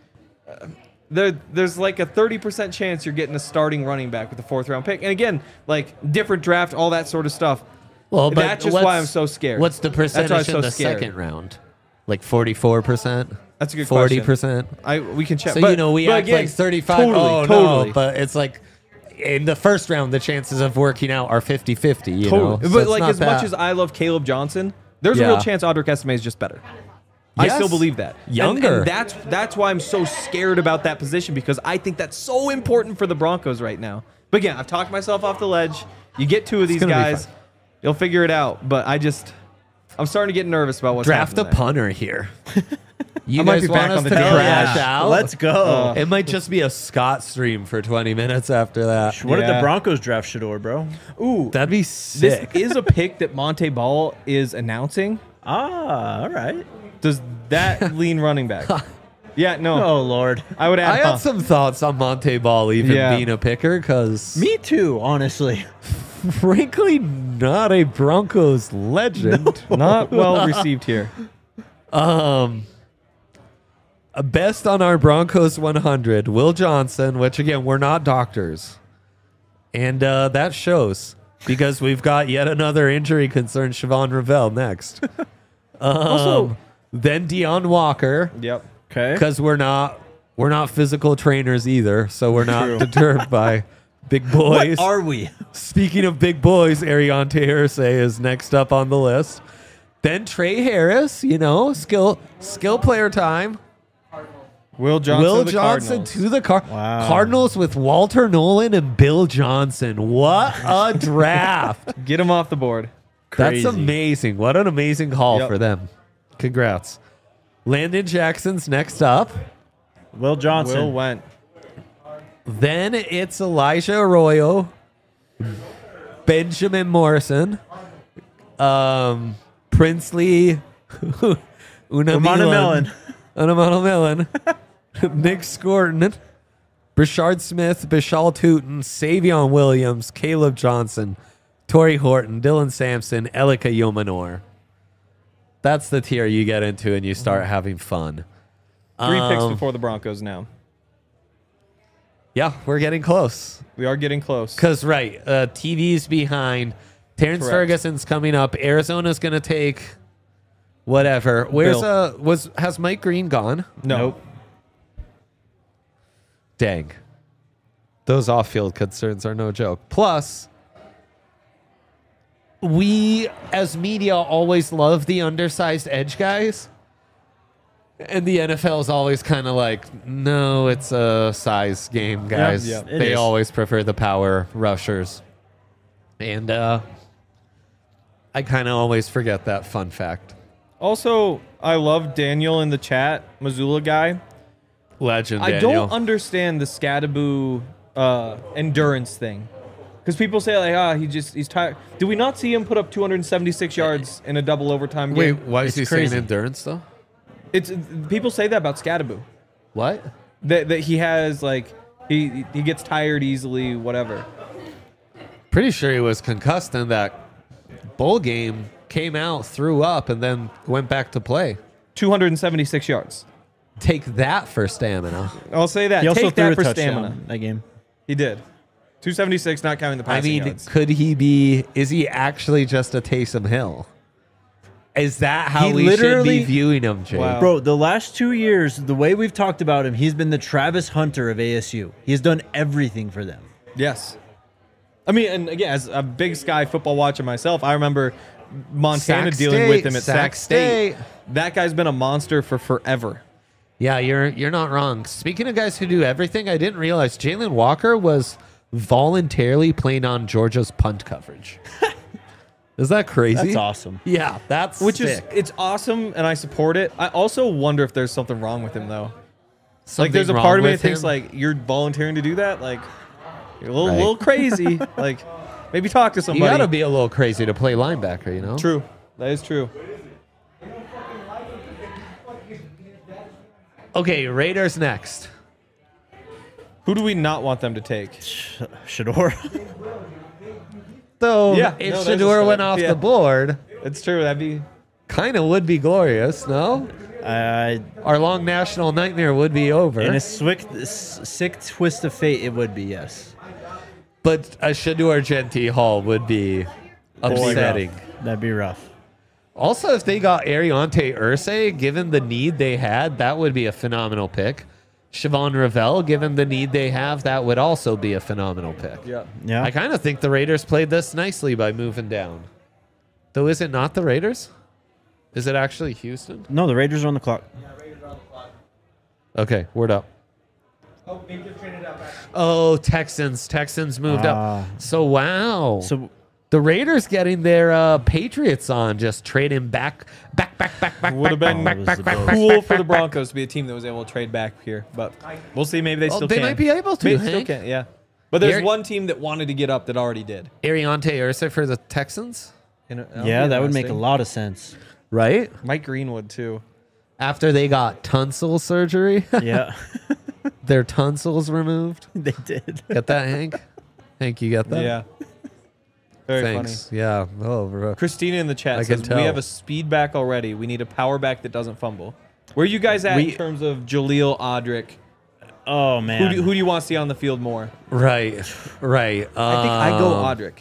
There's like a 30% chance you're getting a starting running back with a fourth-round pick. And again, like different draft, all that sort of stuff. Well, but that's just why I'm so scared. What's the percentage in the second round? Like 44%? That's a good 40%? We can check. So, but, we but act again, like 35. Totally. No, but it's like in the first round, the chances of working out are 50-50, you know? So but it's like not as much as I love Caleb Johnson, there's a real chance Audric Estime is just better. I Yes. still believe that. Younger. And that's why I'm so scared about that position because I think that's so important for the Broncos right now. But again, I've talked myself off the ledge. You get two of these guys, you'll figure it out. But I'm starting to get nervous about what's Draft a happening there. punter here. You I might guys be want back us on the to daily. crash Yeah. out? Let's go. It might just be a Scott stream for 20 minutes after that. What did the Yeah. Broncos draft Shador, bro? Ooh, That'd be sick. this is a pick that Monte Ball is announcing. All right. Does that lean running back? Yeah, no. Oh, Lord. I would I add. had some thoughts on Monte Ball even Yeah. being a picker because, Me too, honestly. frankly, not a Broncos legend. Not well received here. Best on our Broncos 100, Will Johnson, which again, we're not doctors. And that shows because we've got yet another injury concern, Siobhan Ravel, next. Also, Then Deion Walker, yep. Okay. because we're not physical trainers either, so we're not deterred by big boys. What are we? Speaking of big boys, Ariante Hersey is next up on the list. Then Trey Harris, skill player time. Will Johnson, Will to the Johnson Cardinals. to the Wow. Cardinals with Walter Nolan and Bill Johnson. What a draft. Get him off the board. Crazy. That's amazing. What an amazing haul Yep. for them. Congrats. Landon Jackson's next up. Will Johnson. Will went. Then it's Elijah Arroyo, Benjamin Morrison, Princely Unamana Unamana Nick Scorton, Brashard Smith, Bishal Tootin, Savion Williams, Caleb Johnson, Torrey Horton, Dylan Sampson, Elika Yomanor. That's the tier you get into and you start having fun. 3 picks before the Broncos now. Yeah, we're getting close. We are getting close. Because, TV's behind. Terrence Correct. Ferguson's coming up. Arizona's going to take whatever. Has Mike Green gone? No. Nope. Dang. Those off-field concerns are no joke. Plus, we, as media, always love the undersized edge guys. And the NFL is always kind of like, no, it's a size game, guys. Yep, it They is. always prefer the power rushers. And I kind of always forget that fun fact. Also, I love Daniel in the chat, Missoula guy. Legend, I Daniel. don't understand the Scadaboo endurance thing. Because people say, like, he's tired. Did we not see him put up 276 yards in a double overtime game? Wait, why is he crazy. saying endurance, though? People say that about Scadaboo. What? That he has, like, he gets tired easily, whatever. Pretty sure he was concussed in that bowl game, came out, threw up, and then went back to play. 276 yards. Take that for stamina. I'll say that. He also Take threw that a for touchdown stamina. that game. He did. 276, not counting the I passing mean, yards. is he actually just a Taysom Hill? Is that how He we should be literally- viewing him, Jake? Wow. Bro, the last 2 years, the way we've talked about him, he's been the Travis Hunter of ASU. He's done everything for them. Yes. I mean, and again, as a big Sky football watcher myself, I remember Montana Sac dealing State, with him at Sac Sac State. State. That guy's been a monster for forever. Yeah, you're not wrong. Speaking of guys who do everything, I didn't realize Jalen Walker was voluntarily playing on Georgia's punt coverage. Is that crazy? That's awesome. Yeah, that's Which sick. is, it's awesome, and I support it. I also wonder if there's something wrong with him, though. Something There's a wrong part of me that with thinks, him? like, you're volunteering to do that? Like, you're a little, Right. little crazy. Like, maybe talk to You somebody. gotta be a little crazy to play linebacker, you know? True. That is true. Okay, Raiders next. Who do we not want them to take? Shador. Though, Yeah, if no, there's a Shador start. went off Yeah. the board, It's true. That'd be... kind of would be glorious, no? Our long national nightmare would be over. In a sick twist of fate, it would be, yes. But a Shador Genti Hall would be upsetting. That'd be rough. Also, if they got Ariante Ursay, given the need they had, that would be a phenomenal pick. Siobhan Ravel, given the need they have, that would also be a phenomenal pick. Yeah. Yeah. I kind of think the Raiders played this nicely by moving down. Though, is it not the Raiders? Is it actually Houston? No, the Raiders are on the clock. Okay, word up. Oh, Texans. Texans moved up. So, wow. So the Raiders getting their Patriots on, just trading back. Would have been back, cool for the Broncos to be a team that was able to trade back here, but we'll see. Maybe they still they can. might be able to, Maybe they still Hank. can, yeah. But there's Here- one team that wanted to get up that already did. Ariante Ursay for the Texans, yeah, that would make a lot of sense. right? Mike Greenwood too. After they got tonsil surgery, Yeah, their tonsils removed. they did. Get that, Hank? Hank, you get that? Yeah. Very Thanks. funny. Yeah. Oh, bro. Christina in the chat I can says tell. we have a speed back already. We need a power back that doesn't fumble. Where are you guys at in terms of Jaleel Odrick? Oh man, Who do you want to see on the field more? Right. I think I go Odrick.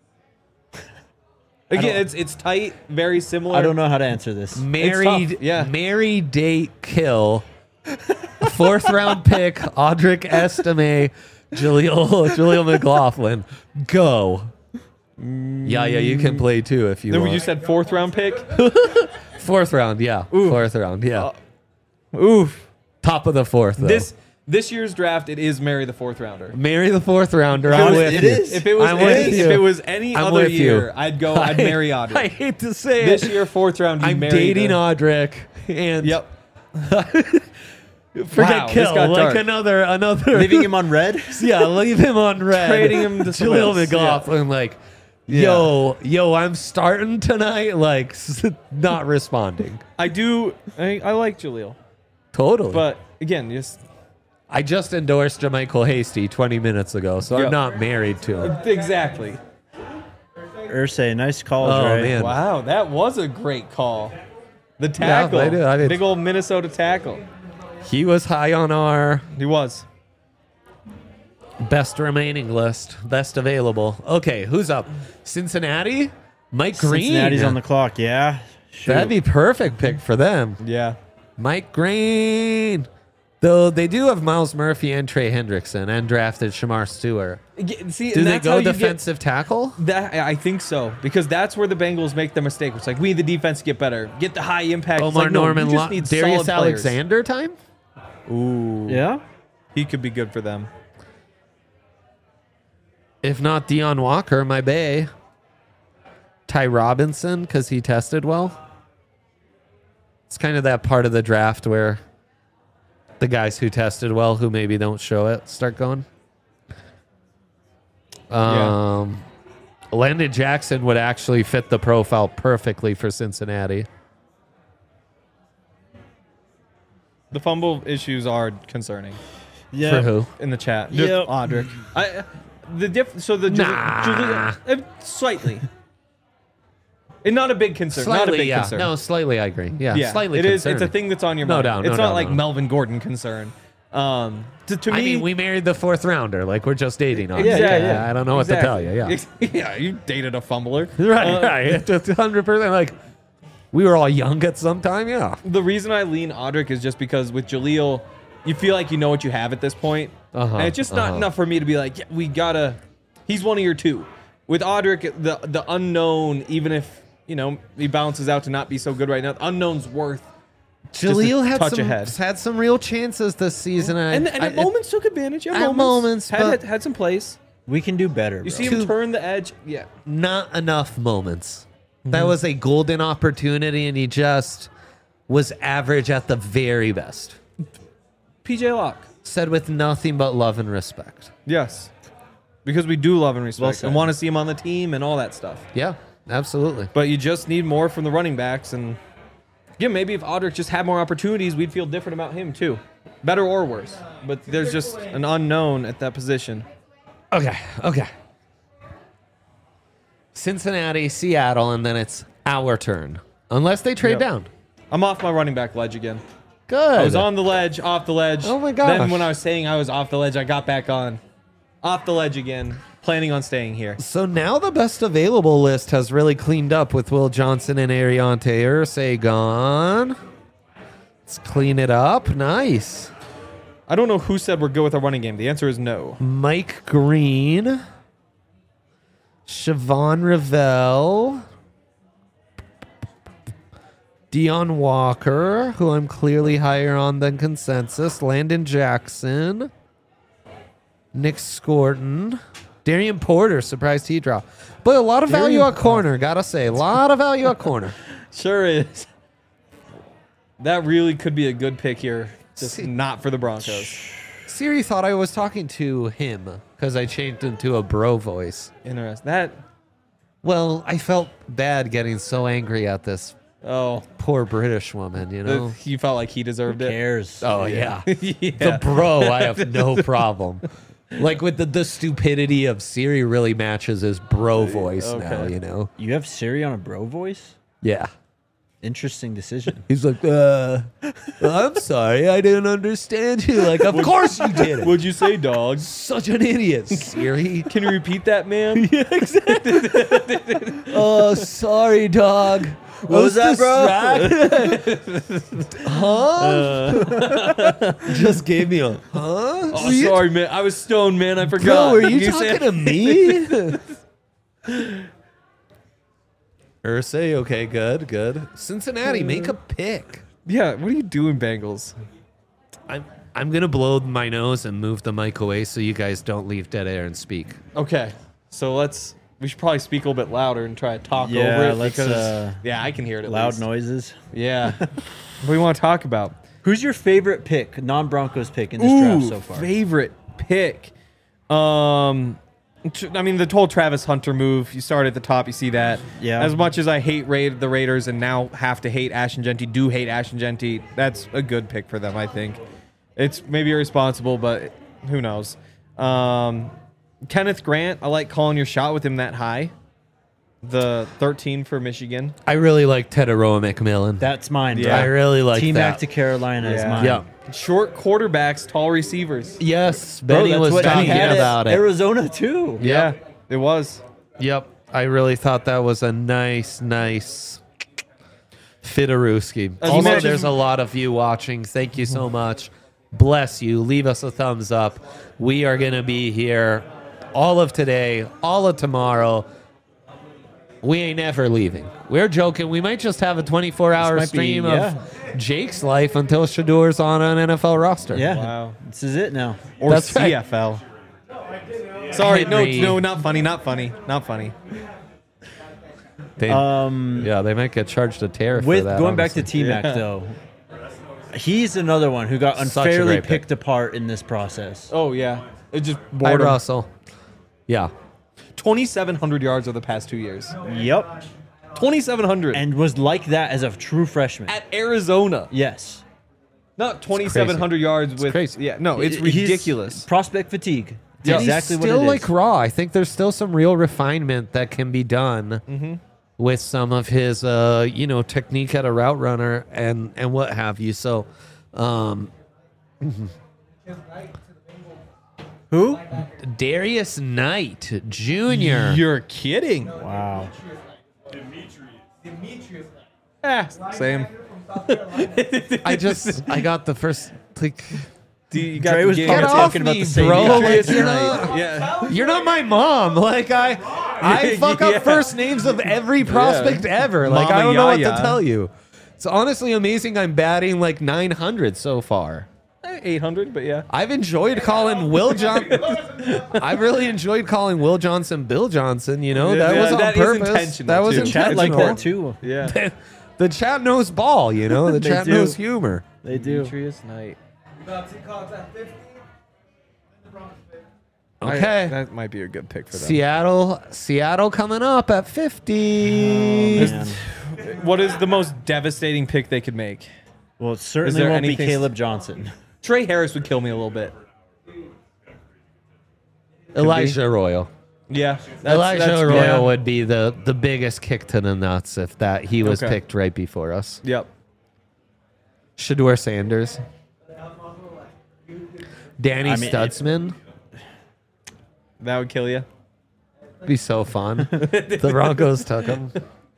Again, it's tight, very similar. I don't know how to answer this. Married, tough, yeah. marry, date, kill. 4th round pick, Audric Estime, Jaleel McLaughlin. Go. Yeah, you can play too if you Then want. you said 4th round pick. 4th round, yeah. 4th round, yeah. Oof. Top of the 4th, though. This year's draft, it is marry the 4th rounder. Marry the 4th rounder. I'm with it you. is. If it was I'm with any, you. if it was any I'm other with you. year, I'd marry Odrick. I hate to say This it. year, 4th round, you I'm marry dating the- Audric, and Yep. forget Wow, this kill. got Like dark. another. Leaving him on red. Yeah, leave him on red. Trading him to someone Jaleel else, McLaughlin, like, yo, I'm starting tonight, like, not responding. I like Jaleel, Totally. but again, just I just endorsed JaMychal Hasty 20 minutes ago, so Yep. I'm not married to him. exactly. Ursay, nice calls, Oh, right? man. Wow, that was a great call. The tackle, I did. big old Minnesota tackle. He was high on our He was. best remaining list, best available. Okay, who's up? Cincinnati? Mike Green. Cincinnati's on the clock. Yeah, shoot. That'd be perfect pick for them. Yeah. Mike Green. Though they do have Miles Murphy and Trey Hendrickson and drafted Shamar Stewart. See, Do and they that's how go you get- defensive tackle? That I think so, because that's where the Bengals make the mistake. It's like we need the defense to get better, get the high impact. It's Omar like, no, Norman, you just need Darius solid players. Alexander time? Ooh, Yeah. he could be good for them. If not Deion Walker, my bae. Ty Robinson, because he tested well. It's kind of that part of the draft where the guys who tested well, who maybe don't show it, start going. Landon Jackson would actually fit the profile perfectly for Cincinnati. The fumble issues are concerning Yeah. For who? in the chat. Yep. Just Audric. Slightly. And not a big concern. Not a Slightly, big yeah. concern. No, slightly, I agree. Yeah, yeah, slightly it is. concerning. It's a thing that's on your No mind. doubt, no It's doubt, not like no. Melvin Gordon concern. To me, I mean, we married the 4th rounder. Like, we're just dating on yeah, it. yeah. I don't know what to tell you. Yeah. Yeah, you dated a fumbler. Right, right. It's 100%. Like, we were all young at some time. Yeah. The reason I lean Audric is just because with Jaleel, you feel like you know what you have at this point. And it's just not enough for me to be like, yeah, we gotta. He's one of your two. With Audric, the unknown, even if he balances out to not be so good right now, the unknown's worth. Jaleel had some real chances this season, and at moments took advantage. At moments, had some plays. We can do better. You bro. see him turn the edge. Yeah, not enough moments. That was a golden opportunity, and he just was average at the very best. PJ Locke said with nothing but love and respect. Yes, because we do love and Well respect said. and want to see him on the team and all that stuff. Yeah, absolutely. But you just need more from the running backs, and yeah, maybe if Audric just had more opportunities, we'd feel different about him too, better or worse. But there's just an unknown at that position. Okay. Cincinnati, Seattle, and then it's our turn. Unless they trade down. I'm off my running back ledge again. Good. I was on the ledge, off the ledge. Oh my gosh. Then when I was saying I was off the ledge, I got back on. Off the ledge again. Planning on staying here. So now the best available list has really cleaned up with Will Johnson and Ariante Irsay gone. Let's clean it up. Nice. I don't know who said we're good with our running game. The answer is no. Mike Green. Siobhan Revelle. Dion Walker, who I'm clearly higher on than consensus. Landon Jackson. Nick Scorton. Darian Porter, surprised he dropped. But a lot of value at corner, gotta say. A lot of value at corner. Sure is. That really could be a good pick here. Just not for the Broncos. Siri thought I was talking to him because I changed into a bro voice. Interesting. Well, I felt bad getting so angry at this poor British woman, you know? You felt like he deserved Who it? cares? Oh, yeah. Yeah. The bro, I have no problem. Like with the stupidity of Siri really matches his bro voice now, you know? You have Siri on a bro voice? Yeah. Interesting decision. He's like, I'm sorry, I didn't understand you. Like, of course you did. What'd you say, dog? Such an idiot, Siri. Can you repeat that, man? Yeah, exactly. Oh, sorry, dog. What was that, bro? Huh? Just gave me a huh? Oh, sorry, man. I was stoned, man. I forgot. Bro, are you talking to me? Irsay, okay, good. Cincinnati, make a pick. Yeah, what are you doing, Bengals? I'm gonna blow my nose and move the mic away so you guys don't leave dead air and speak. Okay, so we should probably speak a little bit louder and try to talk over it because I can hear it at Loud least. noises. Yeah. What do you want to talk about? Who's your favorite pick, non-Broncos pick in this draft so far? Favorite pick. I mean, the whole Travis Hunter move. You start at the top, you see that. Yeah. As much as I hate the Raiders and now have to hate Ashton Genty, that's a good pick for them, I think. It's maybe irresponsible, but who knows. Kenneth Grant, I like calling your shot with him that high. The 13 for Michigan. I really like Teteroa McMillan. That's mine, bro. Yeah. I really like T-Mac that. to Carolina is mine. Yeah. Short quarterbacks, tall receivers. Yes, Bro, Benny that's was what he talking had at about it. Arizona, too. Yeah, it was. Yep. I really thought that was a nice Fitaruski. As Also, much as- there's a lot of you watching. Thank you so much. Bless you. Leave us a thumbs up. We are going to be here all of today, all of tomorrow. We ain't ever leaving. We're joking. We might just have a 24-hour This might be- stream of Jake's life until Shador's on an NFL roster. Yeah. Wow. This is it now. Or That's right. CFL. Sorry, Henry. no, not funny. They, they might get charged a tariff With for that. going back to honestly. T-Mac, though, he's another one who got Such a unfairly great pick. picked apart in this process. Oh, yeah. It just Hi, bored him. Russell. Yeah. 2,700 yards over the past 2 years. Yep. 2,700. And was like that as a true freshman. At Arizona. Yes. Not 2,700 yards with... crazy. Yeah, no, it's He's ridiculous. prospect fatigue. It's Yeah. exactly He's what still it is. like raw. I think there's still some real refinement that can be done with some of his, technique at a route runner and what have you. So, Who? Darius Knight Jr. You're kidding. Wow. Same. I got the first like. You got Dre the was game. probably Get off talking about me, the same bro. guy. Like, you're Yeah. You're not my mom. Like I fuck up first names of every prospect ever. Like Mama I don't know what Yaya. to tell you. It's honestly amazing. I'm batting like 900 so far. 800, but yeah. I've enjoyed calling Will Johnson. I've really enjoyed calling Will Johnson Bill Johnson. You know that was on that is purpose. intentional, That was too. intentional. Chat like that too. Yeah. The chat knows ball. You know the They chat do. knows humor. They do. Demetrius Knight. Okay. That might be a good pick for them. Seattle coming up at 50. Man. What is the most devastating pick they could make? Well, it Is certainly there won't be anything- Caleb Johnson. Trey Harris would kill me a little bit. Elijah Arroyo. Yeah. Elijah Arroyo yeah. would be the biggest kick to the nuts if that he was Okay. picked right before us. Yep. Shador Sanders. Danny I mean, Stutzman. That would kill you. Be so fun. The Broncos took him.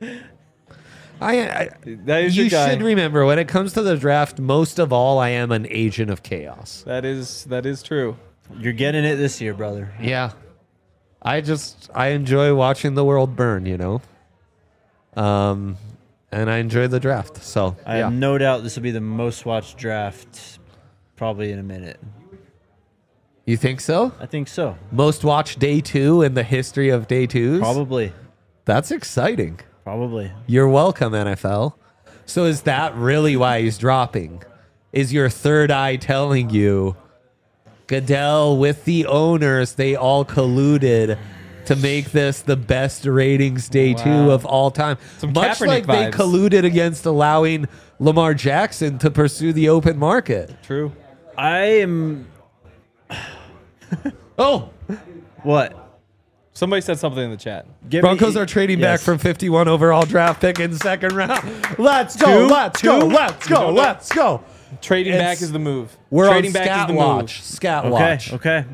That is You your guy. should remember when it comes to the draft, most of all, I am an agent of chaos. That is true. You're getting it this year, brother. Yeah. I enjoy watching the world burn, you know? And I enjoy the draft. So, I yeah. have no doubt this will be the most watched draft probably in a minute. You think so? I think so. Most watched day 2 in the history of day 2s? Probably. That's exciting. Probably. You're welcome, NFL. So is that really why he's dropping? Is your third eye telling you Goodell with the owners, they all colluded to make this the best ratings day 2 of all time? Some Much Kaepernick like they vibes. colluded against allowing Lamar Jackson to pursue the open market. True. I am. Oh, What? Somebody said something in the chat. Give Broncos me- are trading back Yes. from 51 overall draft pick in the second round. Let's go, Two? let's go, Two? let's go, let's go. Trading It's- back is the move. We're Trading on back Scat is the Watch. Scat Okay. Watch. Okay.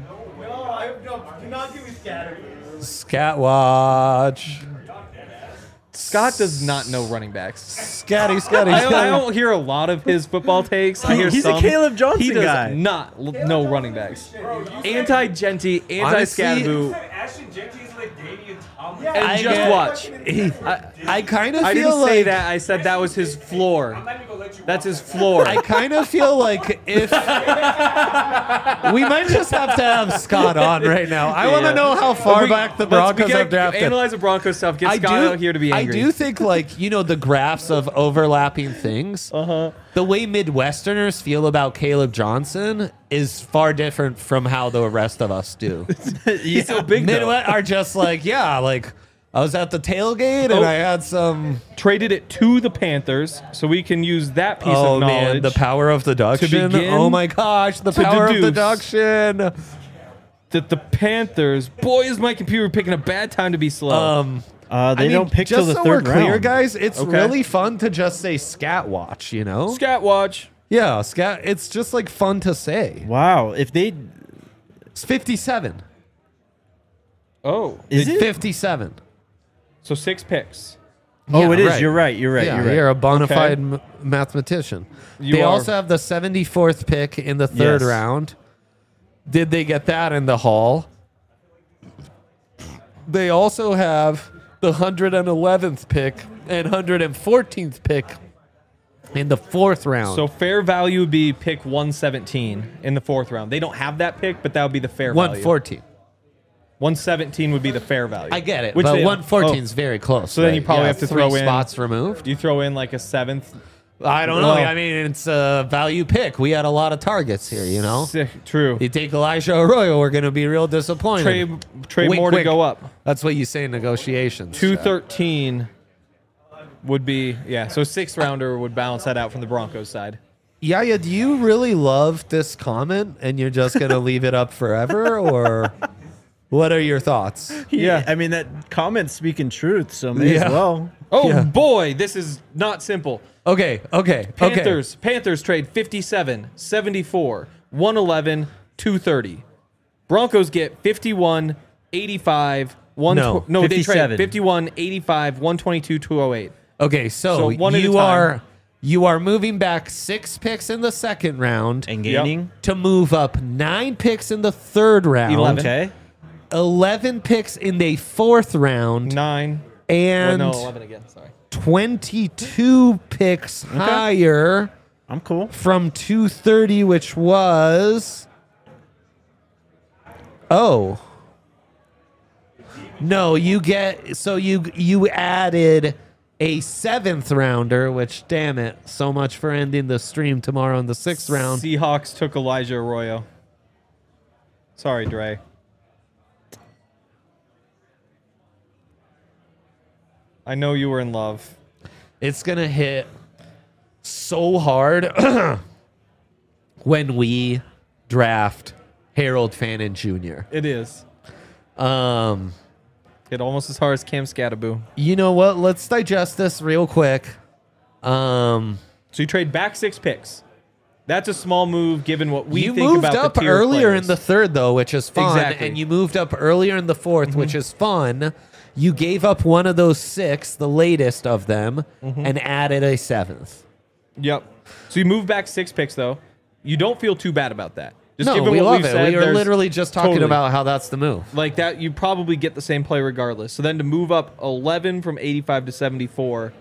Scat Watch. move. Scott does not know running backs. Scatty. I don't hear a lot of his football takes. I hear He's a some. Caleb Johnson He does guy. not know running backs. Anti-Genty, Honestly, anti-Scatteroo, Ashton Genty's like Damian Thomas. and I just get- watch. I kind of I feel didn't like say that. I said that was his floor. That's his floor. I kind of feel like if we might just have to have Scott on right now. I want to Yeah. know how far back the Broncos have drafted. Analyze the Broncos stuff. Get Scott out here to be angry. I do think, like, you know, the graphs of overlapping things. The way Midwesterners feel about Caleb Johnson is far different from how the rest of us do. He's so big though. Midwest are just like, yeah, like I was at the tailgate and Oh. I had some. Traded it to the Panthers, so we can use that piece Oh of knowledge. man, the power of deduction. begin Oh my gosh, the to power of deduce. deduction. That the Panthers. Boy, is my computer picking a bad time to be slow. They I mean, don't pick till just the so third we're clear, round. guys. It's Okay. really fun to just say Scat Watch. You know? Scat watch. Yeah, Scat. It's just like fun to say. Wow. If they. It's 57. Oh, Is it? 57. so 6 picks. Oh, Yeah, it is. right. You're right. You're right. Yeah, you're right. you're a bona Okay. fide mathematician. You They are. also have the 74th pick in the third Yes. round. Did they get that in the Hall? They also have the 111th pick and 114th pick in the fourth round. So fair value would be pick 117 in the 4th round. They don't have that pick, but that would be the fair value. 114. 117 would be the fair value. I get it, Which but they- 114 is very close. So then you probably have to three throw in- spots removed. You throw in like a 7th. I don't know. Well- I mean, it's a value pick. We had a lot of targets here, you know? True. You take Elijah Arroyo, we're going to be real disappointed. Trade Wink, more to wink. go up. That's what you say in negotiations. 213 would be, yeah, so 6th rounder would balance that out from the Broncos side. Yaya, do you really love this comment and you're just going to leave it up forever? Or what are your thoughts? Yeah. I mean, that comment's speaking truth, so may Yeah. as well. Oh Yeah. boy, this is not simple. Okay. Panthers trade 57, 74, 111, 230. Broncos get 51, 85, No, they trade 57. 51, 85, 122, 208. Okay, so one at a you time. are moving back 6 picks in the second round And gaining. to move up 9 picks in the third round. 11. Okay. 11 picks in the fourth round. 9. And 11 again. Sorry. 22 picks higher I'm cool. from 230, which was... Oh. No, you get... So you added a 7th rounder, which, damn it, so much for ending the stream tomorrow in the 6th round. Seahawks took Elijah Arroyo. Sorry, Dre. I know you were in love. It's going to hit so hard when we draft Harold Fannin Jr. It is. Um, Hit almost as hard as Cam Scattaboo. you know what? Let's digest this real quick. So you trade back 6 picks. That's a small move given what we You think moved about up the tier earlier players. in the third, though, which is fun. Exactly. And you moved up earlier in the fourth, which is fun. You gave up one of those 6, the latest of them, and added a 7th. Yep. So you move back 6 picks, though. You don't feel too bad about that. Just No, given we what love we've it. said, We are there's- literally just talking Totally. about how that's the move. like that, you probably get the same play regardless. So then to move up 11 from 85 to 74,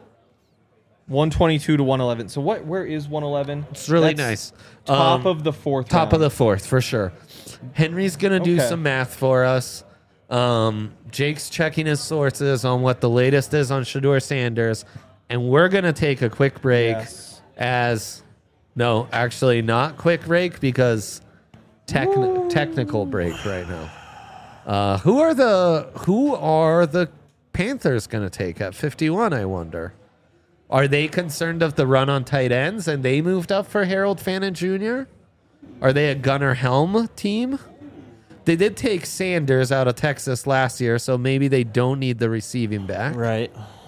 122 to 111. So where is 111? It's really That's nice. Top of the fourth Top round. of the fourth, for sure. Henry's going to do Okay. some math for us. Jake's checking his sources on what the latest is on Shedeur Sanders. And we're going to take a quick break Yes. no, actually not quick break because technical break right now. Who are the Panthers going to take at 51, I wonder? Are they concerned of the run on tight ends and they moved up for Harold Fannin Jr.? Are they a Gunnar Helm team? They did take Sanders out of Texas last year, so maybe they don't need the receiving back. Right.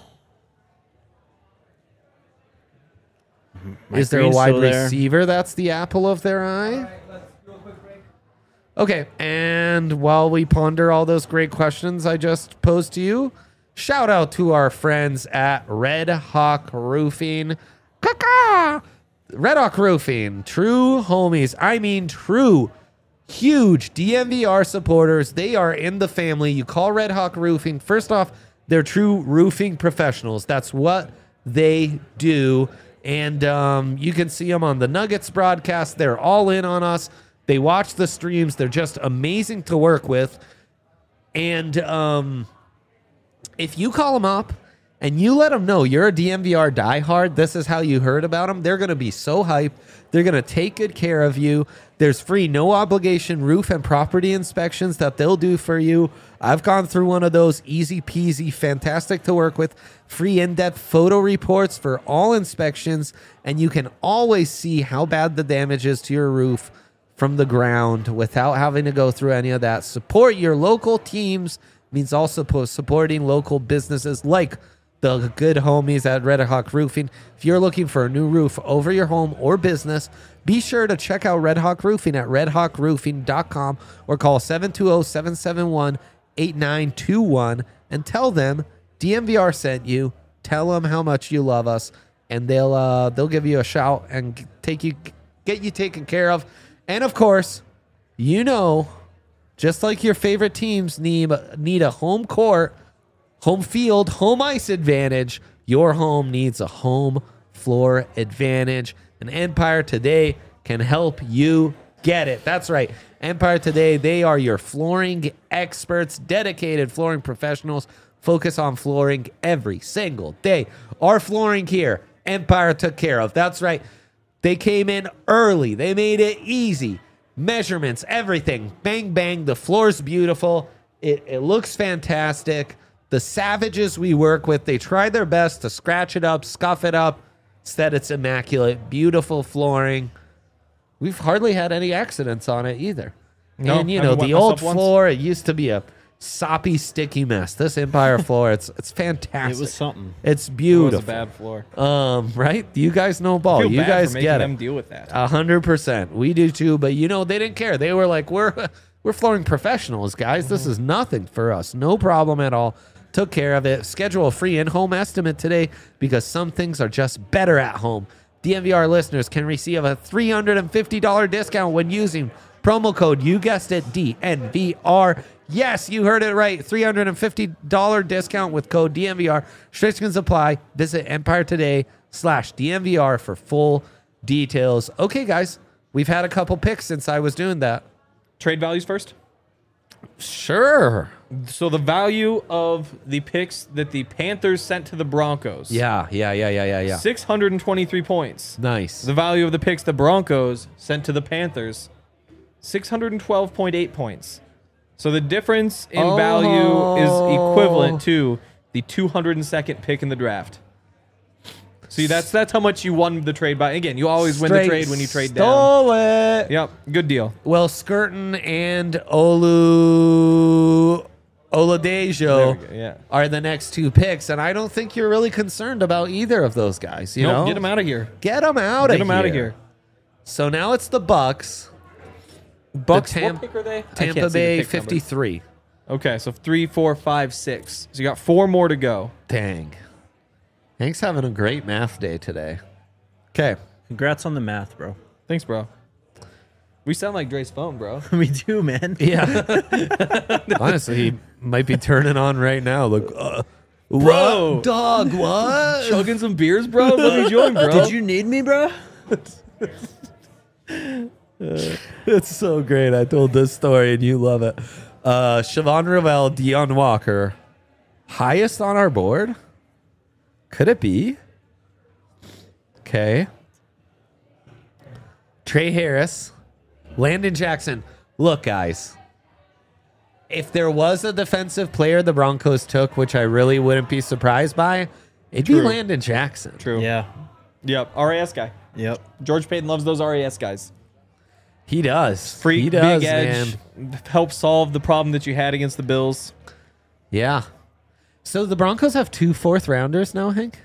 Is there a Green's wide still there. receiver that's the apple of their eye? Okay, and while we ponder all those great questions I just posed to you, shout out to our friends at Red Hawk Roofing. Caw-caw! Red Hawk Roofing, true homies. I mean, true, huge DMVR supporters. They are in the family. You call Red Hawk Roofing. First off, they're true roofing professionals. That's what they do. And you can see them on the Nuggets broadcast. They're all in on us. They watch the streams. They're just amazing to work with. And if you call them up and you let them know you're a DMVR diehard, this is how you heard about them, they're going to be so hyped. They're going to take good care of you. There's free, no obligation roof and property inspections that they'll do for you. I've gone through one of those, easy peasy, fantastic to work with. Free in-depth photo reports for all inspections, and you can always see how bad the damage is to your roof from the ground without having to go through any of that. Support your local teams means also supporting local businesses like the good homies at Red Hawk Roofing. If you're looking for a new roof over your home or business, be sure to check out Red Hawk Roofing at redhawkroofing.com or call 720-771-8921 and tell them DMVR sent you. Tell them how much you love us, and they'll give you a shout and get you taken care of. And of course, you know, just like your favorite teams need a home court, home field, home ice advantage, your home needs a home floor advantage. And Empire Today can help you get it. That's right. Empire Today, they are your flooring experts, dedicated flooring professionals, focus on flooring every single day. Our flooring here, Empire took care of. That's right. They came in early. They made it easy. Measurements, everything. Bang, bang. The floor's beautiful. It looks fantastic. The savages we work with, they try their best to scratch it up, scuff it up. Instead, it's immaculate. Beautiful flooring. We've hardly had any accidents on it either. No, And, you I know, wet the myself old once. floor, it used to be a soppy, sticky mess. This Empire floor, it's fantastic. It was something. It's It was beautiful. a bad floor. Right? You guys know ball. Feel You bad guys for making get them it. deal with that. 100%. We do too, but you know, they didn't care. They were like, we're flooring professionals, guys. This is nothing for us. No problem at all. took care of it. Schedule a free in-home estimate today because some things are just better at home. DNVR listeners can receive a $350 discount when using promo code, you guessed it, DNVR. Yes, you heard it right. $350 discount with code DNVR. Restrictions apply. Visit EmpireToday.com/DNVR for full details. Okay, guys, we've had a couple picks since I was doing that. Trade values first. Sure. So the value of the picks that the Panthers sent to the Broncos. Yeah. 623 points. Nice. The value of the picks the Broncos sent to the Panthers, 612.8 points. So the difference in value is equivalent to the 202nd pick in the draft. See, that's how much you won the trade by. Again, you always win the trade when you trade down. Stole it. Yep, good deal. Well, Skirtin and Oladejo are the next two picks, and I don't think you're really concerned about either of those guys. You know, get them out of here. Get them out of here. Get them out of here. So now it's the Bucks. What pick are they? Tampa Bay 53. Okay, so 3, 4, 5, 6. So you got 4 more to go. Dang. Hank's having a great math day today. Okay. Congrats on the math, bro. Thanks, bro. We sound like Dre's phone, bro. We do, man. Yeah. Honestly, he might be turning on right now. Look, bro. What? Dog, what? Chugging some beers, bro? Let me join, bro. Did you need me, bro? It's so great. I told this story and you love it. Siobhan Rivell, Deion Walker, highest on our board? Could it be? Okay. Trey Harris, Landon Jackson. Look, guys, if there was a defensive player the Broncos took, which I really wouldn't be surprised by, it'd be Landon Jackson. True. Yeah. Yep. RAS guy. Yep. George Payton loves those RAS guys. He does. Free, he does, big edge, help solve the problem that you had against the Bills. Yeah. So the Broncos have 2 4th-rounders now, Hank?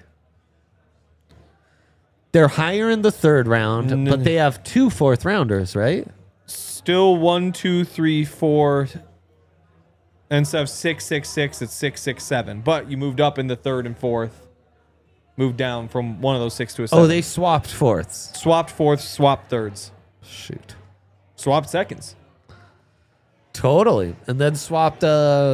They're higher in the 3rd round, but they have 2 4th-rounders, right? Still 1, 2, 3, 4. And instead of 6, 6, 6, it's 6, 6, 7. But you moved up in the 3rd and 4th. Moved down from one of those 6 to a 7. Oh, they swapped 4ths. Swapped 4th, swapped 3rds. Shoot. Swapped 2nds. Totally. And then swapped got a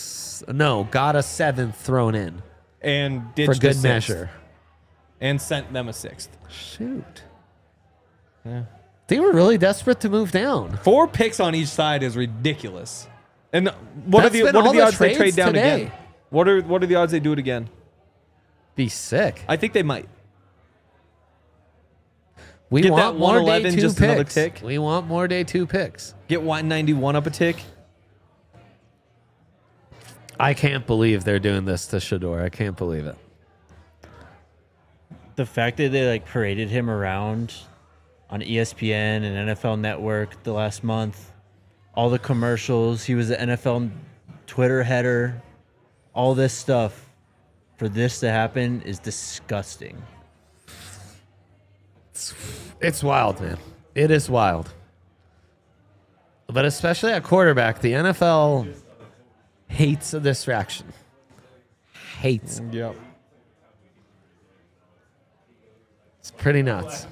7th thrown in. And ditched for good a 6th. measure. And sent them a 6th. Shoot. Yeah. They were really desperate to move down. 4 picks on each side is ridiculous. And what are That's the been all odds the they trade trades down today. again? What are the odds they do it again? Be sick. I think they might. We Get want that more day 111, 2 just picks. another tick. We want more day 2 picks. Get 191 up a tick. I can't believe they're doing this to Shador. I can't believe it. The fact that they paraded him around on ESPN and NFL Network the last month, all the commercials, he was the NFL Twitter header, all this stuff, for this to happen is disgusting. It's wild, man. It is wild. But especially at quarterback, the NFL hates a distraction. Hates. Yep. It's pretty nuts.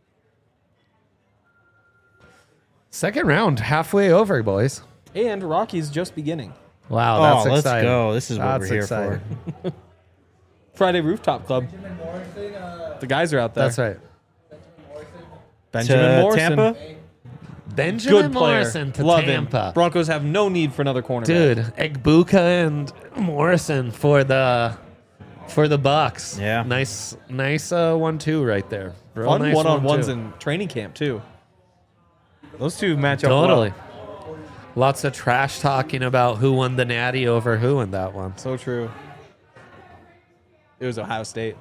2nd round, halfway over, boys. And Rocky's just beginning. Wow, that's let's exciting. go. This is what That's we're here exciting. for. Friday Rooftop Club. The guys are out there. That's right. Benjamin Morrison. Tampa? Benjamin Good player. Morrison to Love Tampa. him. Broncos have no need for another cornerback. Dude, Egbuka and Morrison for the Bucks. Yeah. Nice 1-2 right there. Real Fun nice one-on-ones 1-2. in training camp, too. Those two match up Totally. well. Lots of trash talking about who won the Natty over who in that one. So true. It was Ohio State.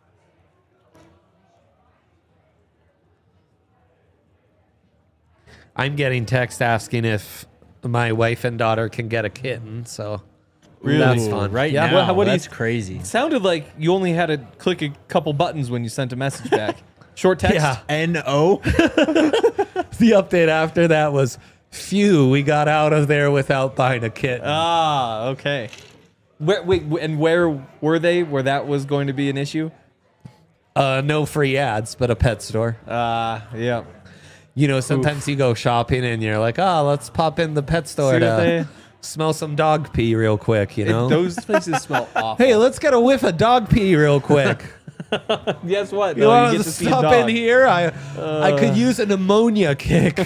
I'm getting text asking if my wife and daughter can get a kitten, so Really? that's fun. Right Yeah. now, What do you- that's crazy. It sounded like you only had to click a couple buttons when you sent a message back. Short text? Yeah. N-O? The update after that was, phew, we got out of there without buying a kitten. Ah, okay. Where were they? Where that was going to be an issue? No free ads, but a pet store. Yeah. You know, sometimes you go shopping and you're like, oh, let's pop in the pet store See what to smell some dog pee real quick, you know? Those places smell awful. Hey, let's get a whiff of dog pee real quick. Guess what? You want to stop in here? I could use an ammonia kick.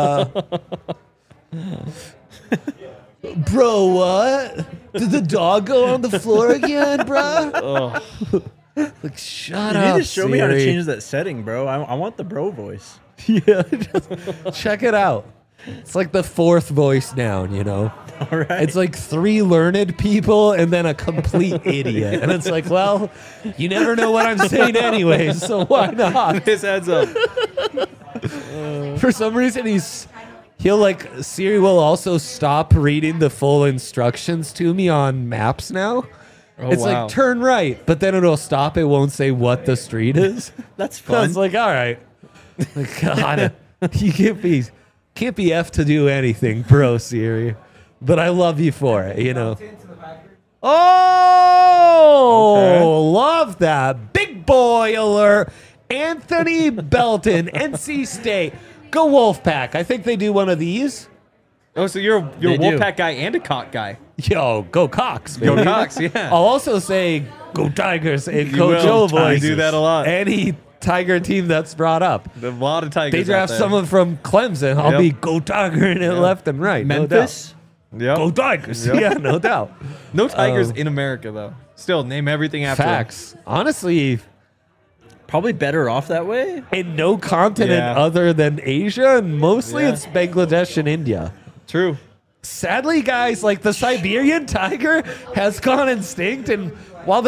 Bro, what? Did the dog go on the floor again, bro? Like, shut up. You need to show me how to Siri. change that setting, bro. I want the bro voice. Yeah, just check it out. It's like the fourth voice down, you know? All right. It's like 3 learned people and then a complete idiot. And it's like, well, you never know what I'm saying anyway, so why not? This adds up. For some reason, Siri will also stop reading the full instructions to me on maps now. It's wow. like, turn right, but then it'll stop. It won't say what the street is. That's So I fun. was like, all right. Like, God, you can't be F to do anything, bro, Siri. But I love you for it, you know. Oh, love that. Big boy alert. Anthony Belton, NC State. Go Wolfpack. I think they do one of these. Oh, so you're a They do. Wolfpack guy and a Cock guy. Yo, go Cox, baby. Go Cox, yeah. I'll also say go Tigers and You Coach will. O voices. I do that a lot. Any Tiger team that's brought up. A lot of Tigers. They draft out there. someone from Clemson. I'll Yep. be go Tiger in it left and right. Memphis? Yep. No doubt. Go Tigers. Yep. Yeah, no doubt. No Tigers in America though. Still, name everything after them. Facts. Honestly, Probably better off that way. in no continent Yeah. other than Asia, and mostly Yeah. it's Bangladesh and India. True. Sadly, guys, like the Siberian tiger has gone extinct, and while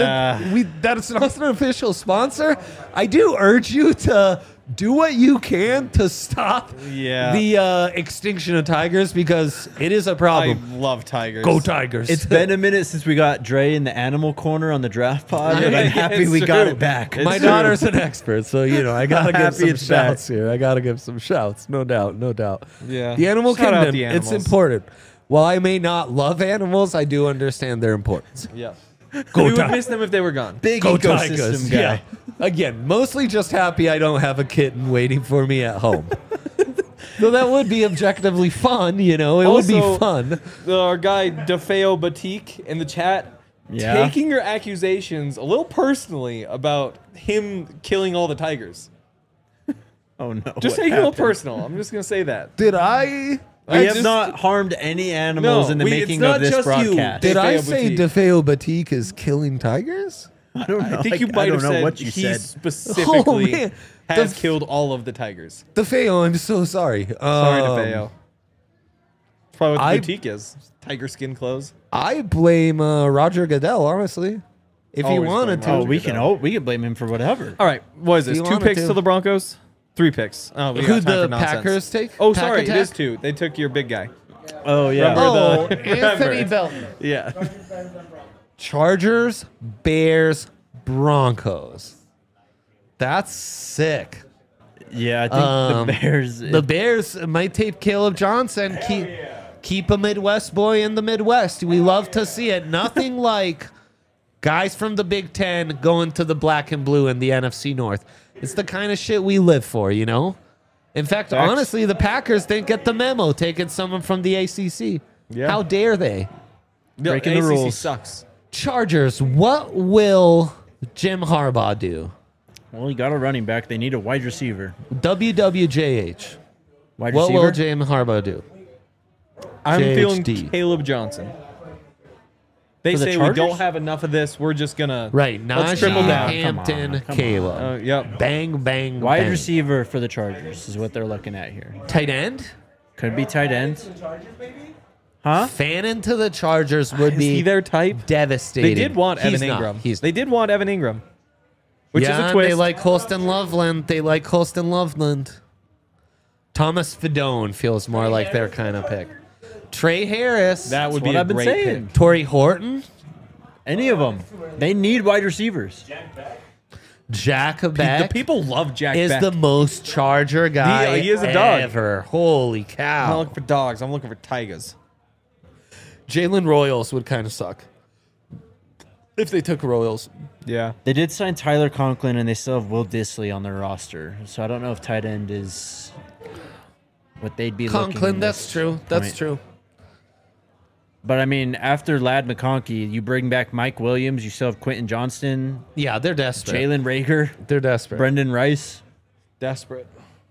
that's not an official sponsor, I do urge you to do what you can to stop the extinction of tigers because it is a I problem. love Tigers. Go Tigers! It's been a minute since we got Dre in the animal corner on the draft pod, but Yeah, I'm happy it's we got true. it back. It's My true. daughter's an expert, so you know I gotta give happy some it's back. shouts here. I gotta give some shouts, no doubt, no doubt. Yeah. The animal Shout out kingdom, the it's animals. important. While I may not love animals, I do understand their importance. Yeah. Go We would Tigers. miss them if they were gone. Big Go ecosystem Tigers. guy. Yeah. Again, mostly just happy I don't have a kitten waiting for me at home. So that would be objectively fun, you know. It would be Also, fun. Our guy DeFeo Batik in the chat Yeah. taking your accusations a little personally about him killing all the tigers. Oh no! Just what taking it a little happened? personal. I'm just gonna say that. Did I We have just- not harmed any animals in the it's making not of this just you. broadcast. did I DeFeo say Batik. DeFeo Batik is killing tigers? I don't know. I think you I might don't have know said what you he said. specifically Oh, man. has Def- killed all of the tigers. DeFeo, I'm so sorry. Sorry, DeFeo. That's probably what I- the boutique is. Tiger skin clothes. I blame Roger Goodell, honestly. If he Always wanted blame to. Oh, we can blame him for whatever. All right, what is this? you 2 wanted picks to. to the Broncos? 3 picks. Oh, we got Who'd time the for nonsense. Packers take? Oh, Pack sorry, it attack? is 2. They took your big guy. Oh yeah. Remember- Oh, the- Anthony Belton. Yeah. Chargers, Bears, Broncos. That's sick. Yeah, I think the Bears. The Bears might take Caleb Johnson. Keep a Midwest boy in the Midwest. We love to see it. Nothing like guys from the Big Ten going to the black and blue in the NFC North. It's the kind of shit we live for, you know? In fact, Facts. honestly, the Packers didn't get the memo taking someone from the ACC. Yeah. How dare they? Breaking the ACC rules. sucks. Chargers, what will Jim Harbaugh do? well, you got a running back. They need a wide receiver. WWJH. Wide What will receiver. Jim Harbaugh do? I'm feeling JHD. Caleb Johnson. They For the say we Chargers? don't have enough of this. We're just gonna Right, Let's Najee triple down. Hampton, Come on. Caleb. Yep. Bang, bang, Wide bang. receiver for the Chargers is what they're looking at here. Tight end? Could be tight end. Huh? Fanning to the Chargers would Is be he their type? devastating. They did want He's Evan not. Ingram. He's They did want Evan Ingram, which yeah, is a twist. they like Holston Loveland. They like Holston Loveland. Thomas Fedone feels more like their kind of pick. Trey Harris. that would That's be what a I've been great saying. pick. Torrey Horton. Any of them. They need wide receivers. Jack The Beck people love Jack is Beck. the most Charger guy he is a dog. ever. Holy I'm not cow. looking for dogs. I'm looking for tigers. Jalen Royals would kind of suck. if they took Royals. Yeah. They did sign Tyler Conklin, and they still have Will Dissly on their roster. So I don't know if tight end is what they'd be looking. Conklin, that's true. That's true. But I mean, after Ladd McConkey, you bring back Mike Williams. You still have Quentin Johnston, Yeah, they're desperate. Jalen Rager, They're desperate. Brendan Rice. Desperate.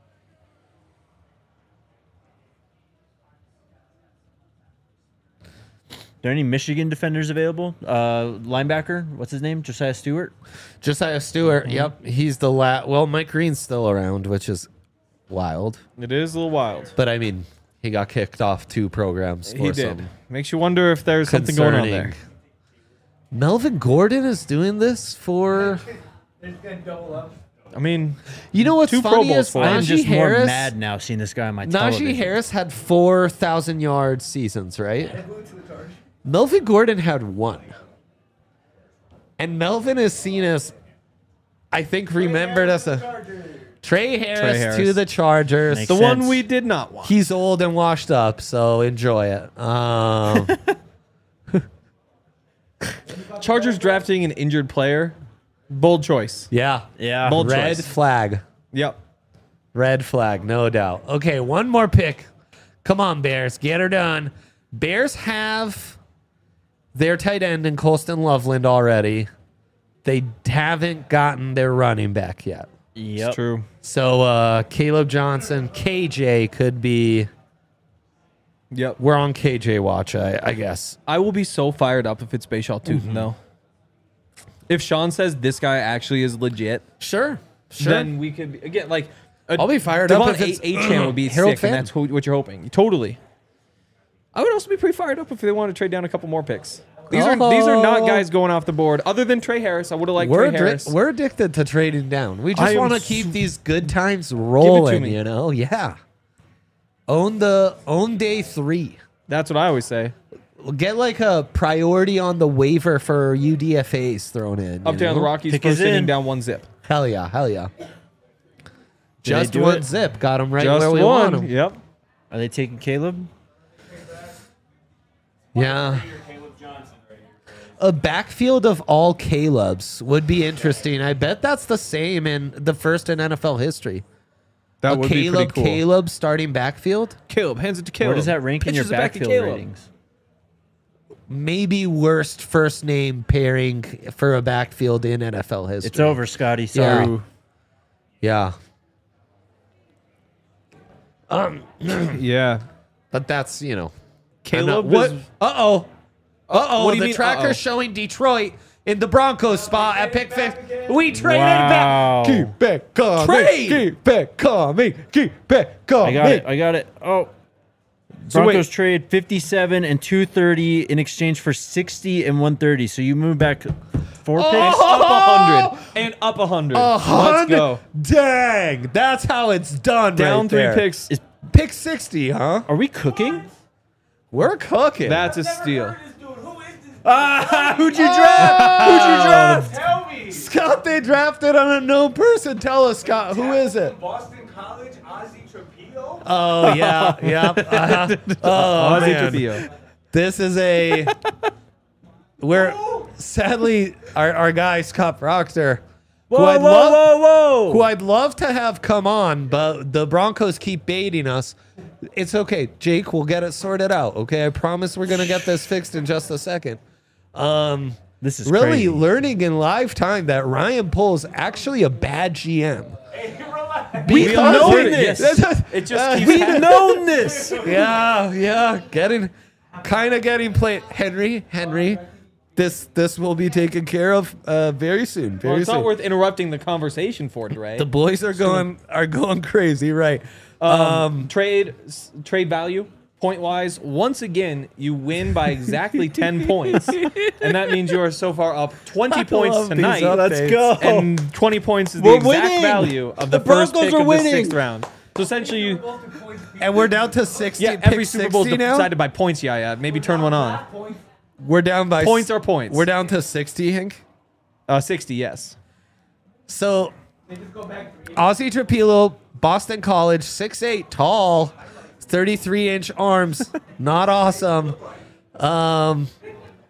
Are there any Michigan defenders available? Linebacker, what's his name? Josiah Stewart. Josiah Stewart. Yep, he's the Well, Mike Green's still around, which is wild. It is a little wild. But I mean, he got kicked off 2 programs. He For did. some Makes you wonder if there's something going on there. concerning- Melvin Gordon is doing this for. I mean, You know what's 2 Pro funny Bowls is for him. I'm Najee just more Harris. mad now seeing this guy on my Najee television. Harris had 4,000-yard seasons, right? Melvin Gordon had 1. And Melvin is seen as, I think, remembered as a Trey Harris Harris. to the Chargers. Makes the sense. one we did not want. He's old and washed up, so enjoy it. Chargers drafting an injured player. Bold choice. Yeah. Yeah. Bold Red choice. flag. Yep. Red flag, no doubt. Okay, one more pick. Come on, Bears. Get her done. Bears have their tight end in Colston Loveland already. They haven't gotten their running back yet. Yep. It's true. So Caleb Johnson, KJ could be. Yep. We're on KJ watch, I guess. I will be so fired up if it's Bashaw Tootin, though. If Sean says this guy actually is legit, Sure. then we could, again, like... I'll be fired up Devon if it's A-Chan would be Harold sick, and Finn. that's what you're hoping. Totally. I would also be pretty fired up if they wanted to trade down a couple more picks. These are not guys going off the board. Other than Trey Harris, I would have liked Trey Harris. We're addicted to trading down. We I just am want to s- keep these good times rolling, me. you know? Yeah. Own day 3. That's what I always say. Get like a priority on the waiver for UDFAs thrown in. Up you down the know? Rockies, Pick first is inning, in. down 1 zip. Hell yeah, hell yeah. they Just do one it? zip. Got him right Just where we one. want him. Yep. Are they taking Caleb? Yeah. A backfield of all Calebs would be interesting. I bet that's the same in the first in NFL history. That A would be pretty cool. Caleb starting backfield. Caleb, hands it to Caleb. Where does that rank in your Pitches it back to backfield Caleb. ratings? Maybe worst first name pairing for a backfield in NFL history. It's over, Scotty. Sorry. Yeah. Yeah. But that's, you know. Caleb What? is- Uh-oh. Uh-oh. What do you the mean, tracker's uh-oh? showing Detroit in the Broncos spot at pick 5. We traded Wow. back. Keep it coming. Trade. Keep it coming. Keep it coming. I got it. Oh. So Broncos wait. trade 57 and 230 in exchange for 60 and 130. So you move back 4 picks. Up 100. And up 100. Let's go. Dang. That's how it's done Down right 3 there. picks. Pick 60, huh? Are we cooking? We're cooking. That's a steal. Who'd you draft? Tell me. Scott, they drafted on a no person. Tell us, Scott. Who is it? Boston College, Ozzie Trapillo. Oh, yeah. Yep. Oh, Ozzie man. Trapillo. This is a. We're sadly our guy Scott Proctor, who I'd love to have come on, but the Broncos keep baiting us. It's okay, Jake. We'll get it sorted out. Okay, I promise we're gonna get this fixed in just a second. This is Really crazy. learning in live time that Ryan Pohl's actually a bad GM. Hey, relax. We've known this. It just keeps We've happening. known this. Yeah, getting played. Henry, this will be taken care of very soon. Very Well, it's soon. not worth interrupting the conversation for, Dre. The boys are going crazy, right? Trade value, point wise. Once again, you win by exactly 10 points, and that means you are so far up 20 points love these tonight. updates. Let's go. And 20 points is the We're exact winning. value of the, The first Broncos pick are of winning. the 6th round. So essentially, you And we're down to 60. every pick Super Bowl 60 now. decided by points. Yeah. Maybe turn one on. We're down by Points are points. We're down to 60, Hank. 60. Yes. So, Ozzie Trapillo, Boston College, 6'8", tall, 33-inch arms. Not awesome.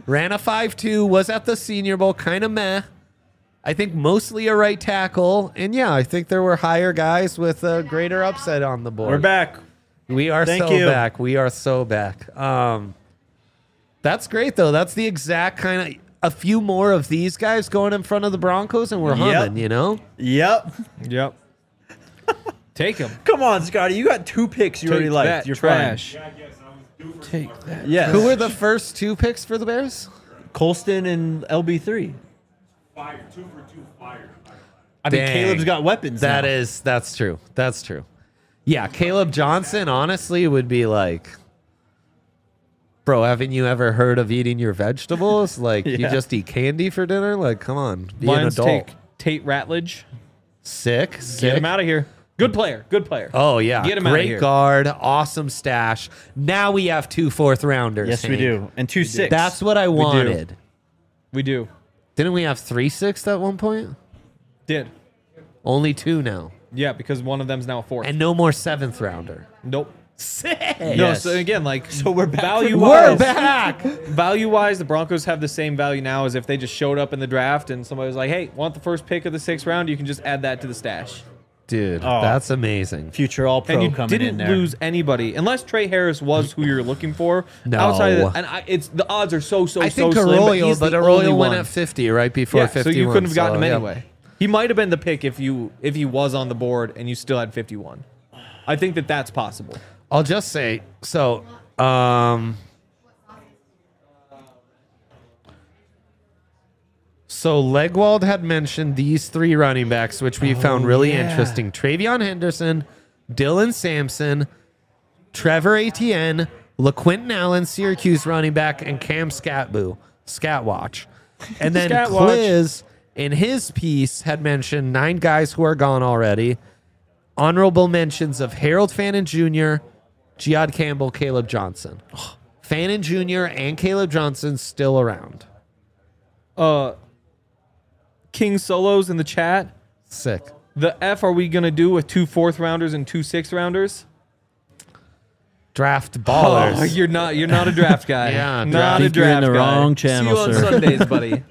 Ran a 5.2, was at the Senior Bowl, kind of meh. I think mostly a right tackle. And yeah, I think there were higher guys with a greater upside on the board. We're back. We are Thank so you. back. We are so back. That's great, though. That's the exact kind of a few more of these guys going in front of the Broncos, and we're humming, you know? Yep. Yep. Take him. Come on, Scotty. You got 2 picks you already Take liked. that You're trash. Take that. fine. Yeah. Who were the first 2 picks for the Bears? Colston and LB3. Fire. 2 for 2 fire. I mean, Dang. Caleb's got weapons now. That's true. That's true. Yeah, Caleb Johnson, honestly, would be like, bro, haven't you ever heard of eating your vegetables? Like, you Yeah. just eat candy for dinner? Like, come on, be an Lions adult. take Tate Ratledge. Sick. Get him out of here. Good player. Good player. Oh, yeah. Get him outta Great here. guard. Awesome stash. Now we have 2 4th-rounders. Yes, we Hank. do. And 2 6. That's what I wanted. We do. Didn't we have 3 6 at one point? Did. Only 2 now. Yeah, because one of them's now a 4th. And no more 7th-rounder. Nope. Sick. No, Yes. so again, like, So we're back. value We're wise, back. value wise, the Broncos have the same value now as if they just showed up in the draft and somebody was like, "Hey, want the first pick of the 6th round? You can just add that to the stash." Dude, Oh. that's amazing. Future All Pro And you coming in didn't there. lose anybody unless Trey Harris was who you're looking for. No. Outside of and it's the odds are so I think slim, Arroyo, he's but the Arroyo only went one. at 50 right before Yeah, 51. so you couldn't have gotten him yeah. anyway. He might have been the pick if he was on the board and you still had 51. I think that's possible. I'll just say, so, so Legwald had mentioned these 3 running backs, which we found really interesting. Travion Henderson, Dylan Sampson, Trevor Etienne, LaQuinton Allen, Syracuse running back, and Cam Scatwatch. And then Scatwatch. Cliz, in his piece, had mentioned 9 guys who are gone already. Honorable mentions of Harold Fannin Jr., Giad Campbell, Caleb Johnson. Fannin Jr. and Caleb Johnson still around. King Solos in the chat. Sick. The F are we gonna do with 2 4th-rounders and 2 6th-rounders? Draft ballers. Oh, you're not a draft guy. Yeah, not I a think you're in draft the guy. wrong channel, See you sir. on Sundays, buddy.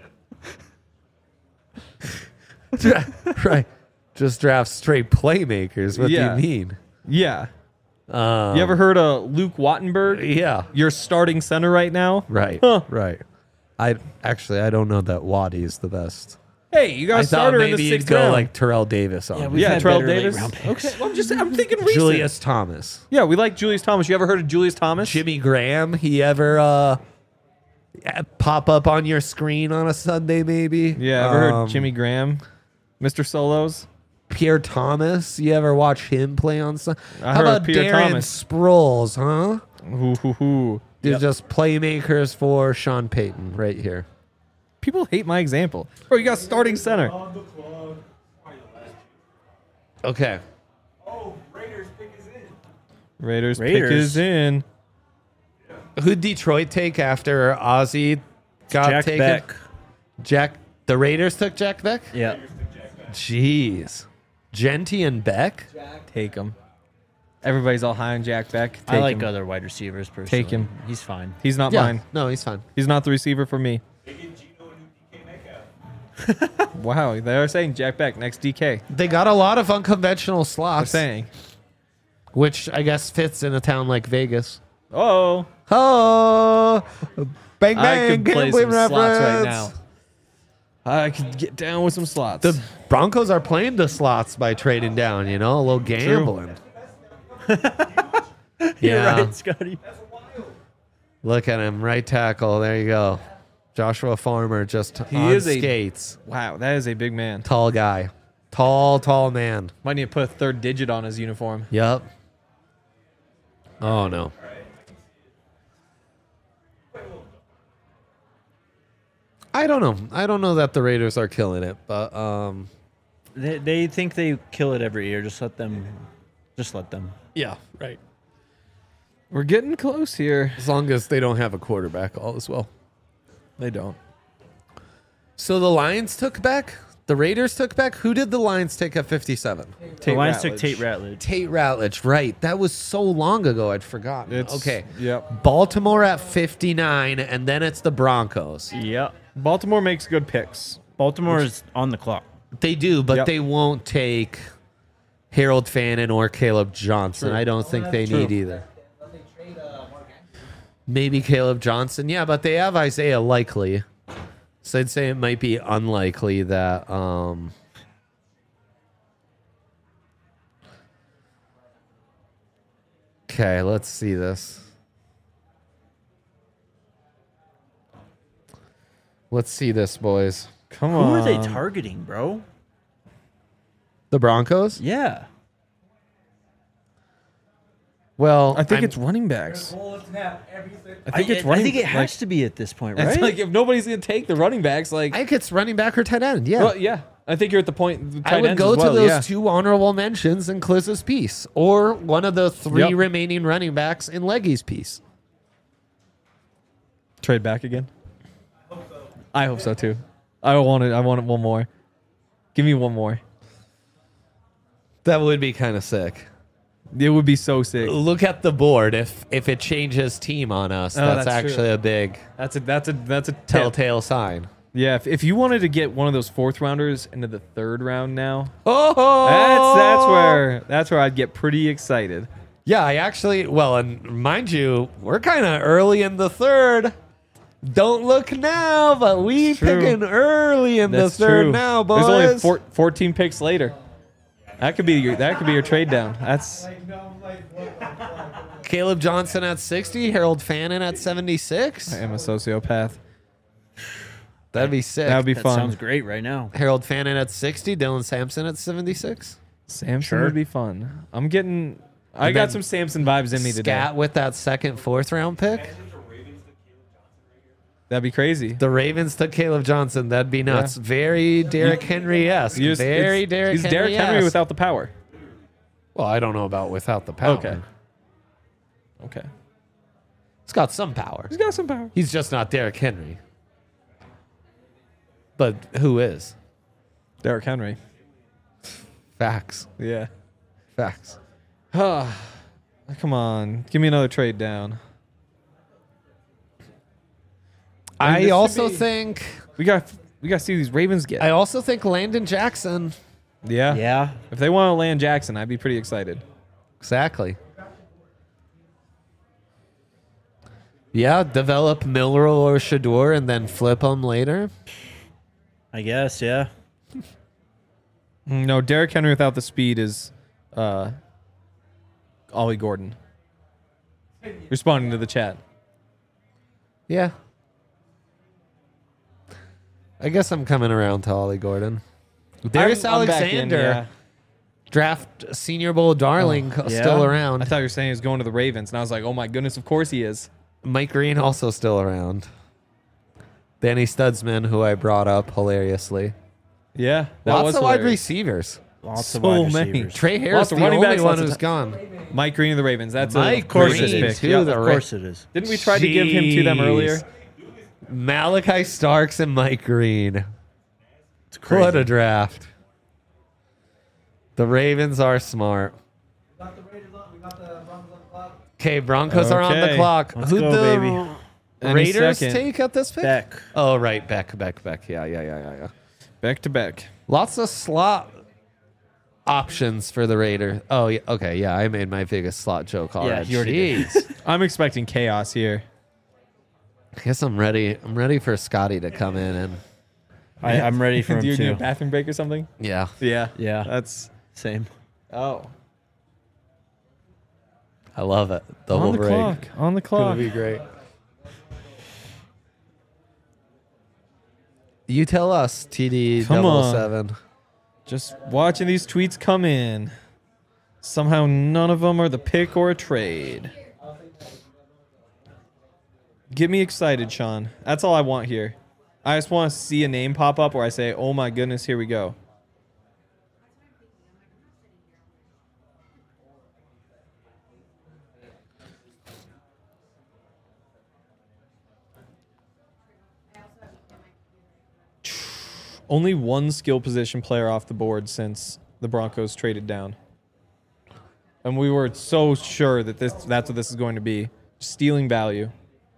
Right. Just draft straight playmakers. What Yeah. do you mean? Yeah. You ever heard of Luke Wattenberg? Yeah. Your starting center right now? Right. Huh. Right. I don't know that Waddy is the best. Hey, you got I a thought starter in maybe the you'd 6th go round. like Terrell Davis on. we've yeah, had Terrell better Davis. late-round picks. Okay, well, I'm thinking recent. Julius Thomas. Yeah, we like Julius Thomas. You ever heard of Julius Thomas? Jimmy Graham. He ever pop up on your screen on a Sunday maybe? Yeah, ever heard Jimmy Graham? Mr. Solos? Pierre Thomas. You ever watch him play on Sunday? I How heard about Pierre Darren Thomas. Sproles, huh? Ooh, hoo, hoo. They're just playmakers for Sean Payton right here. People hate my example. Bro, you got starting center. On the club. Okay. Oh, Raiders pick is in. Raiders pick Raiders. is in. Who'd Detroit take after Ozzie got Jack taken? Beck. The Raiders took Jack Beck? Yeah. Jeez. Genty and Beck? Take him. Everybody's all high on Jack Beck. Take I like him. other wide receivers personally. Take him. He's fine. He's not Yeah. mine. No, he's fine. He's not the receiver for me. They get Gino and DK Metcalf. Wow, they are saying Jack Beck next DK. They got a lot of unconventional They're slots, saying. which I guess fits in a town like Vegas. Oh, Oh, bang I bang! could play Gambling some slots right reference. now. I could get down with some slots. The Broncos are playing the slots by trading down. You know, a little gambling. You're Yeah. right, Scotty. Look at him, right tackle. There you go. Joshua Farmer just He on is a- skates. Wow, that is a big man. Tall guy. Tall man. Might need to put a 3rd digit on his uniform. Yep. Oh, no. I don't know. I don't know that the Raiders are killing it, but They think they kill it every year. Just let them. yeah, right. We're getting close here. As long as they don't have a quarterback, all is well. They don't. So the Lions took back The Raiders took back. Who did the Lions take at 57? The Lions took Tate Ratledge. Tate Ratledge, right. That was so long ago, I'd forgotten. Okay. Yep. Baltimore at 59, and then it's the Broncos. Yep. Baltimore makes good picks. Baltimore is on the clock. They do, but Yep. they won't take Harold Fannin or Caleb Johnson. True. I don't think they True. need either. Maybe Caleb Johnson. Yeah, but they have Isaiah Likely. So I'd say it might be unlikely that okay, let's see this. Let's see this, boys. Come Who on. are they targeting, bro? The Broncos? Yeah. Well, I think I'm- it's running backs. I think it's I running. think it has like, to be at this point, right? It's like if nobody's gonna take the running backs, like I think it's running back or tight end. Yeah. well, yeah. I think you're at the point. The tight I would ends go as well, to those yeah. two honorable mentions in Cliz's piece, or one of the three Yep. remaining running backs in Leggy's piece. Trade back again. I hope so too. I want it. I want it one more. Give me one more. That would be kind of sick. It would be so sick. Look at the board. If it changes team on us, Oh, that's that's actually true. a big That's a tip. telltale sign. Yeah, if you wanted to get one of those fourth rounders into the third round now, Oh, that's where I'd get pretty excited. Yeah, I actually. Well, and mind you, we're kind of early in the third. Don't look now, but we True. picking early in That's the third true. now, boys. There's only 14 picks later. That could be your trade down. That's Caleb Johnson at 60, Harold Fannin at 76. I am a sociopath. That'd be sick. That would be That fun. sounds great right now. Harold Fannin at 60, Dylan Sampson at 76. Samson Sure. would be fun. I And got then some Samson vibes in me today. Scat with that second, fourth round pick. That'd be crazy. The Ravens took Caleb Johnson. That'd be nuts. Very Derrick Henry-esque. You just- Very it's- Derrick He's Derrick Henry Henry-esque. without the power. Well, I don't know about without the power. Okay. He's got some power. He's got some power. He's just not Derrick Henry. But who is? Derrick Henry. Facts. Yeah. Facts. Come on. Give me another trade down. I this also should be- think We got to see these Ravens get. I also think Landon Jackson. Yeah. Yeah. If they want to land Jackson, I'd be pretty excited. Exactly. Yeah, develop Milrow or Shador and then flip them later. I guess, yeah. No, Derrick Henry without the speed is Ollie Gordon. Responding to the chat. Yeah. I guess I'm coming around to Ollie Gordon. Darius I'm back in, Alexander, yeah. draft Senior Bowl darling, yeah? still around. I thought you were saying he was going to the Ravens, and I was like, oh my goodness, of course he is. Mike Green also still around. Danny Studsman, who I brought up hilariously. Yeah. That Lots was of wide hilarious. receivers. Lots So of wide many. receivers. Trey Harris, Lots the of running only backs, one lots of who's gone. Mike Green of the Ravens. That's Mike of course Green, his pick. too, Yep. the Of course it is. Didn't we try to give him to them earlier? Jeez. Malachi Starks and Mike Green. It's crazy. What a draft. The Ravens are smart. Okay, Broncos are on the Okay. clock. Let's Who'd go, the baby. Any Raiders second. take at this pick? Beck. Oh, right. Beck. Yeah. Back to back. Lots of slot options for the Raiders. Oh, yeah. Okay, yeah. I made my biggest slot joke already. you already did. Jeez. I'm expecting chaos here. I guess I'm ready. I'm ready for Scotty to come in and I'm ready for Do you him need a too. bathroom break or something? yeah. Yeah. Yeah. That's. Same. Oh. I love it. The On whole the break. clock. On the Gonna clock. be great. You tell us, TD Come on. 007. Just watching these tweets come in. Somehow none of them are the pick or a trade. Get me excited, Sean. That's all I want here. I just want to see a name pop up where I say, oh my goodness, here we go. Only one skill position player off the board since the Broncos traded down. And we were so sure that that's what this is going to be. Stealing value.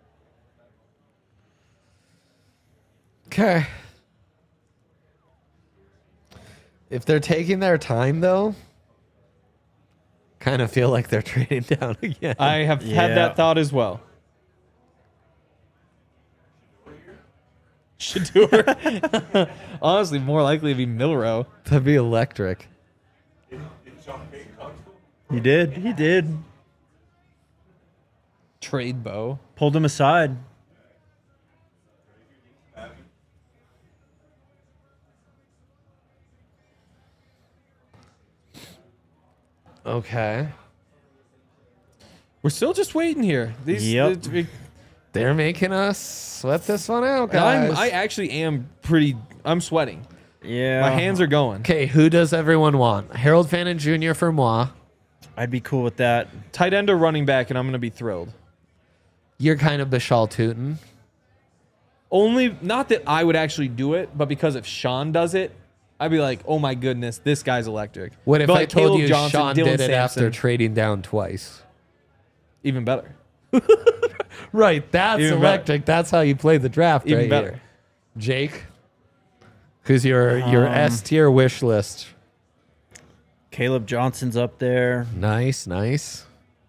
Okay. If they're taking their time, though, kind of feel like they're trading down again. I have had that thought as well. Shador. Honestly, more likely to be Milrow. That'd be electric. He did. He did. Trade Bo. Pulled him aside. Okay. We're still just waiting here. They're making us sweat this one out, guys. I actually am I'm sweating. Yeah. My hands are going. Okay, who does everyone want? Harold Fannin Jr. for moi. I'd be cool with that. Tight end or running back, and I'm going to be thrilled. You're kind of Bashal Tootin. Only, not that I would actually do it, but because if Sean does it, I'd be like, oh my goodness, this guy's electric. What if But I like told Caleb you Johnson, Sean Dylan did it Sampson, after trading down twice? Even better. Right, that's Even electric. That's how you play the draft Even right better. here. Jake, who's your S tier wish list? Caleb Johnson's up there. Nice, nice.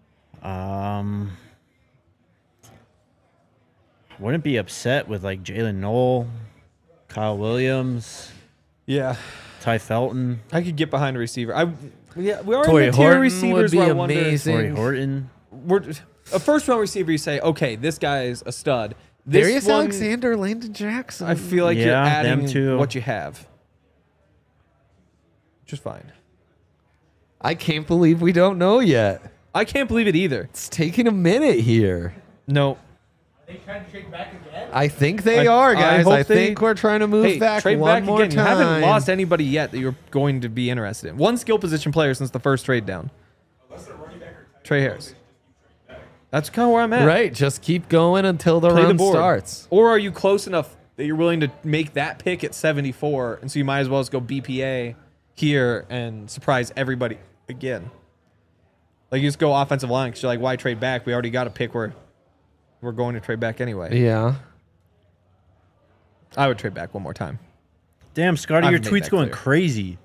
Wouldn't be upset with like Jalen Knoll, Kyle Williams, Yeah. Ty Felton, I could get behind a receiver. We are Tory in the tier Horton receivers would be where I wonder. amazing. Torrey Horton. A first round receiver, you say, okay, this guy's a stud. This Darius one, Alexander, Landon Jackson. I feel like you're Yeah, adding them too. what you have. Which is fine. I can't believe we don't know yet. I can't believe it either. It's taking a minute here. No. They trying to trade back again? I think they I- are, I guys. hope I they- think we're trying to move Hey, back trade one back more again. time. You haven't lost anybody yet that you're going to be interested in. One skill position player since the first trade down. Trey Harris. That's kind of where I'm at. Right, just keep going until the Play run the board. starts. Or are you close enough that you're willing to make that pick at 74, and so you might as well just go BPA here and surprise everybody again? Like you just go offensive line because you're like, why trade back? We already got a pick where we're going to trade back anyway. Yeah. I would trade back one more time. Damn, Scotty, I've your made tweet's that going clear. crazy.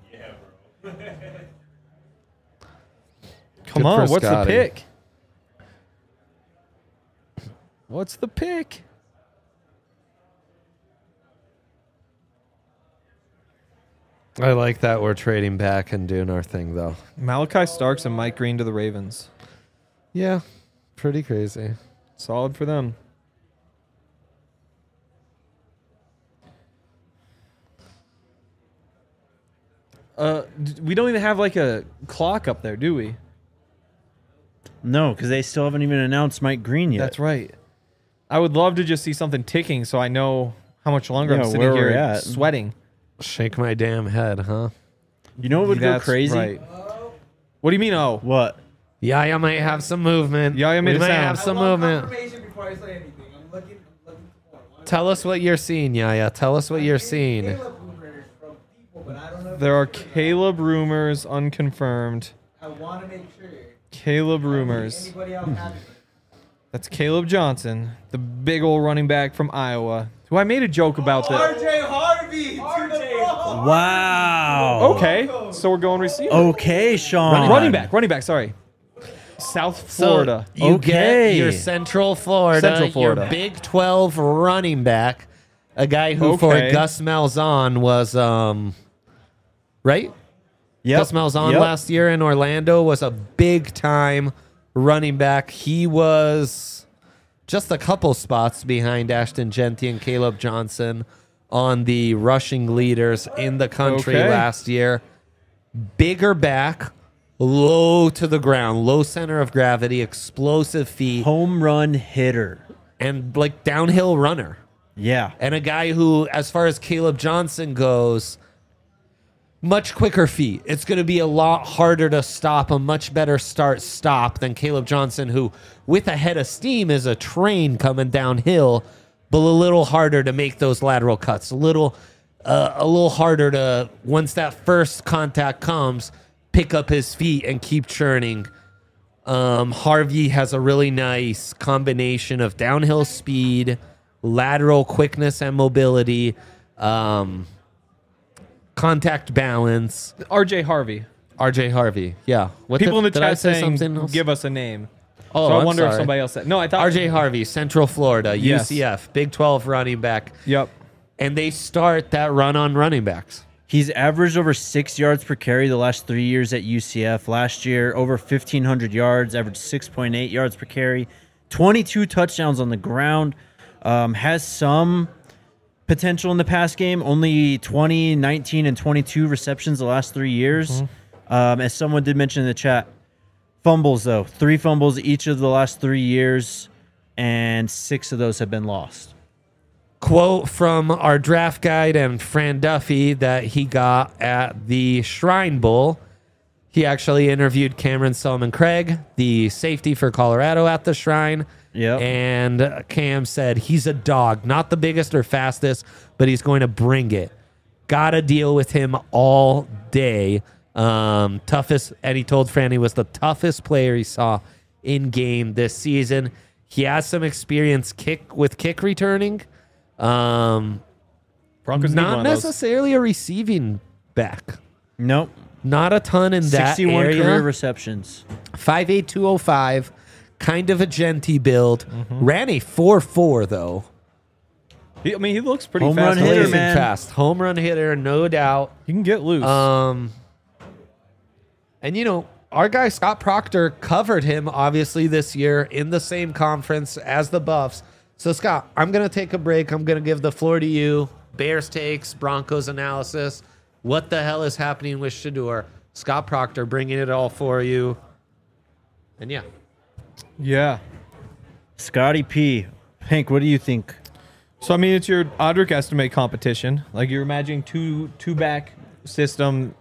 Come Good on, for what's the Scotty. pick? What's the pick? I like that we're trading back and doing our thing, though. Malachi Starks and Mike Green to the Ravens. Yeah, pretty crazy. Solid for them. We don't even have like a clock up there, do we? No, because they still haven't even announced Mike Green yet. That's right. I would love to just see something ticking so I know how much longer Yeah, I'm sitting where here we're at. sweating. Shake my damn head, huh? You know what would go That's crazy? right. What do you mean, oh? What? Yaya might have some movement. Yaya made we a might sound. have some I want movement. confirmation before I say anything. I'm looking for one. Tell us what you're seeing, Yaya. Tell us what you're seeing. Caleb rumors from people, but I don't know if There are it's true. Caleb rumors unconfirmed. I want to make sure. Caleb rumors. Anybody else have it? That's Caleb Johnson, the big old running back from Iowa, who I made a joke about that. RJ Harvey to the ball. Wow. Okay, so we're going receiver. Okay, Sean. Running back, sorry. South Florida. So you Okay. get your Central Florida, Central Florida. your Big 12 running back, a guy who for Okay. Gus Malzahn was, right? Yep. Gus Malzahn Yep. last year in Orlando was a big-time running back. He was just a couple spots behind Ashton Genty and Caleb Johnson on the rushing leaders in the country Okay. last year. Bigger back, low to the ground, low center of gravity, explosive feet, Home run hitter. and like downhill runner. Yeah. And a guy who, as far as Caleb Johnson goes, much quicker feet. It's going to be a lot harder to stop, a much better start-stop than Caleb Johnson, who, with a head of steam, is a train coming downhill, but a little harder to make those lateral cuts. A little a little harder to, once that first contact comes, pick up his feet and keep churning. Harvey has a really nice combination of downhill speed, lateral quickness and mobility, contact balance. RJ Harvey. RJ Harvey, yeah. People in the did I chat say saying, something else? give us a name. Oh, so I I'm wonder if sorry. somebody else said. No, I thought RJ Harvey, Central Florida, Yes. UCF, Big 12 running back. Yep. And they start that run on running backs. He's averaged over 6 yards per carry the last 3 years at UCF. Last year, over 1,500 yards, averaged 6.8 yards per carry, 22 touchdowns on the ground. Has some potential in the pass game. Only 20, 19, and 22 receptions the last 3 years. As someone did mention in the chat, fumbles, though. 3 fumbles each of the last 3 years, and 6 of those have been lost. Quote from our draft guide and Fran Duffy that he got at the Shrine Bowl. He actually interviewed Cameron Solomon-Craig, the safety for Colorado at the Shrine. Yep. And Cam said he's a dog, not the biggest or fastest, but he's going to bring it. Got to deal with him all day. Toughest, and he told Fran he was the toughest player he saw in game this season. He has some experience kick returning. Broncos need Not one of those. necessarily a receiving back. Nope. Not a ton in that 61 area. career receptions. 5'8", 205, kind of a genty build. Mm-hmm. Ran a 4.4 though. I mean, he looks pretty Home fast. run hitter, Blazing man. fast. Home run hitter, no doubt. He can get loose. And you know, our guy Scott Proctor covered him obviously this year in the same conference as the Buffs. So Scott, I'm going to take a break. I'm going to give the floor to you. Bears takes, Broncos analysis. What the hell is happening with Shedeur? Scott Proctor bringing it all for you. And yeah. yeah. Scotty P. Hank, what do you think? So, I mean, it's your Audric estimate competition. Like, you're imagining two-back system.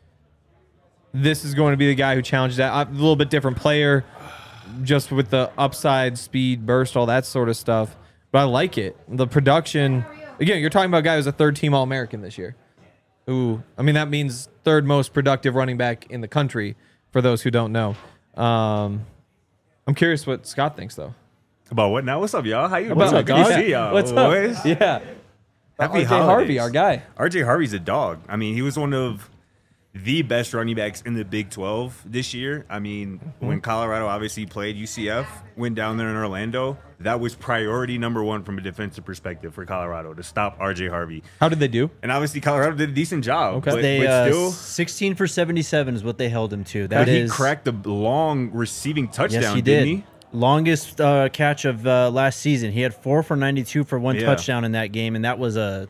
This is going to be the guy who challenged that. A little bit different player, just with the upside, speed, burst, all that sort of stuff. But I like it. The production. Again, you're talking about a guy who's a third-team All-American this year. Who, I mean, that means third most productive running back in the country, for those who don't know. I'm curious what Scott thinks, though. About what now? What's up, y'all? How you? What's up, Good to dog? see y'all. What's boys. up? Yeah. Happy RJ holidays. Harvey, our guy. RJ Harvey's a dog. I mean, he was one of the best running backs in the Big 12 this year. I mean, when Colorado obviously played UCF, went down there in Orlando, that was priority number one from a defensive perspective for Colorado, to stop RJ Harvey. How did they do? And obviously, Colorado did a decent job. Okay. But, They but still, 16 for 77 is what they held him to. but That he is cracked a long receiving touchdown, Yes, he didn't did. he? Longest catch of last season. He had 4 for 92 for one Yeah. touchdown in that game, and that was a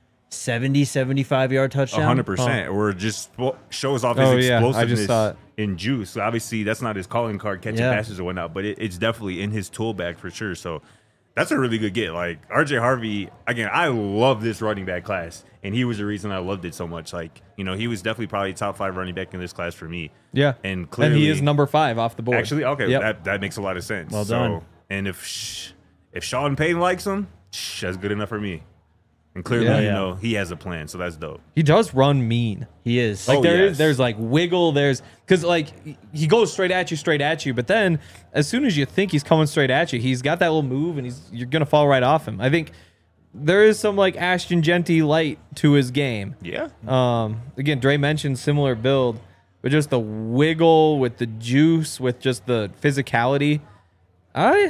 75-yard touchdown. 100%. Or just shows off Oh, his yeah. I just explosiveness saw it. in juice. So obviously, that's not his calling card, catching Yeah. passes or whatnot, but it's definitely in his tool bag for sure. So that's a really good get. Like, RJ Harvey, again, I love this running back class, and he was the reason I loved it so much. Like, you know, he was definitely probably top 5 running back in this class for me. Yeah. And clearly, he is number 5 off the board. Actually, okay, Yep. that makes a lot of sense. Well done. And if Sean Payton likes him, that's good enough for me. And clearly, Yeah. you know, he has a plan, so that's dope. He does run mean. He is. Like Oh, there's yes. like wiggle, because like he goes straight at you, but then as soon as you think he's coming straight at you, he's got that little move and you're gonna fall right off him. I think there is some like Ashton Genty light to his game. Yeah. Again, Dre mentioned similar build, but just the wiggle with the juice, with just the physicality. I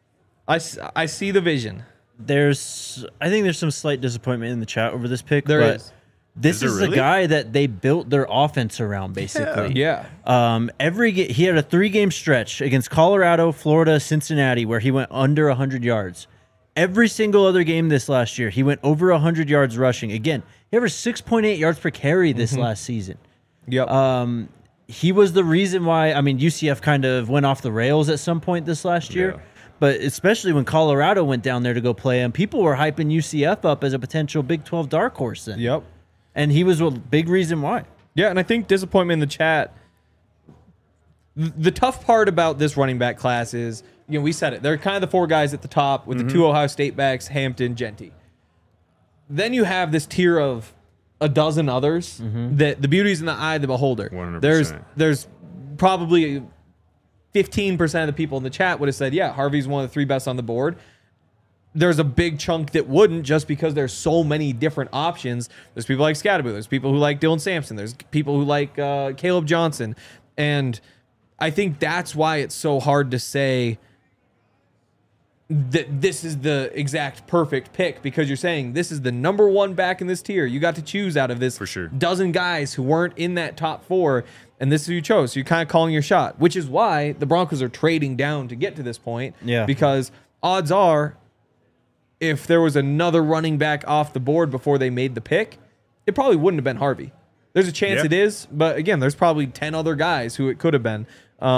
see the vision. I think there's some slight disappointment in the chat over this pick. There but is. This Is there is really? the guy that they built their offense around, basically. Yeah. He had a 3-game stretch against Colorado, Florida, Cincinnati, where he went under 100 yards. Every single other game this last year, he went over 100 yards rushing. Again, he averaged 6.8 yards per carry this last season. Yep. He was the reason why, I mean, UCF kind of went off the rails at some point this last year. Yeah. But especially when Colorado went down there to go play him, people were hyping UCF up as a potential Big 12 dark horse then. Yep. And he was a big reason why. Yeah, and I think disappointment in the chat. The tough part about this running back class is, you know, we said it. They're kind of the 4 guys at the top with the 2 Ohio State backs, Hampton, Genty. then you have this tier of a dozen others that the beauty's in the eye of the beholder. 100%. There's probably 15% of the people in the chat would have said, yeah, Harvey's one of the 3 best on the board. There's a big chunk that wouldn't, just because there's so many different options. There's people like Scadaboo. There's people who like Dylan Sampson. There's people who like Caleb Johnson. And I think that's why it's so hard to say that this is the exact perfect pick, because you're saying this is the number 1 back in this tier. You got to choose out of this For sure. dozen guys who weren't in that top 4, and this is who you chose. So you're kind of calling your shot, which is why the Broncos are trading down to get to this point. Yeah. Because odds are, if there was another running back off the board before they made the pick, it probably wouldn't have been Harvey. There's a chance it is, but again, there's probably 10 other guys who it could have been.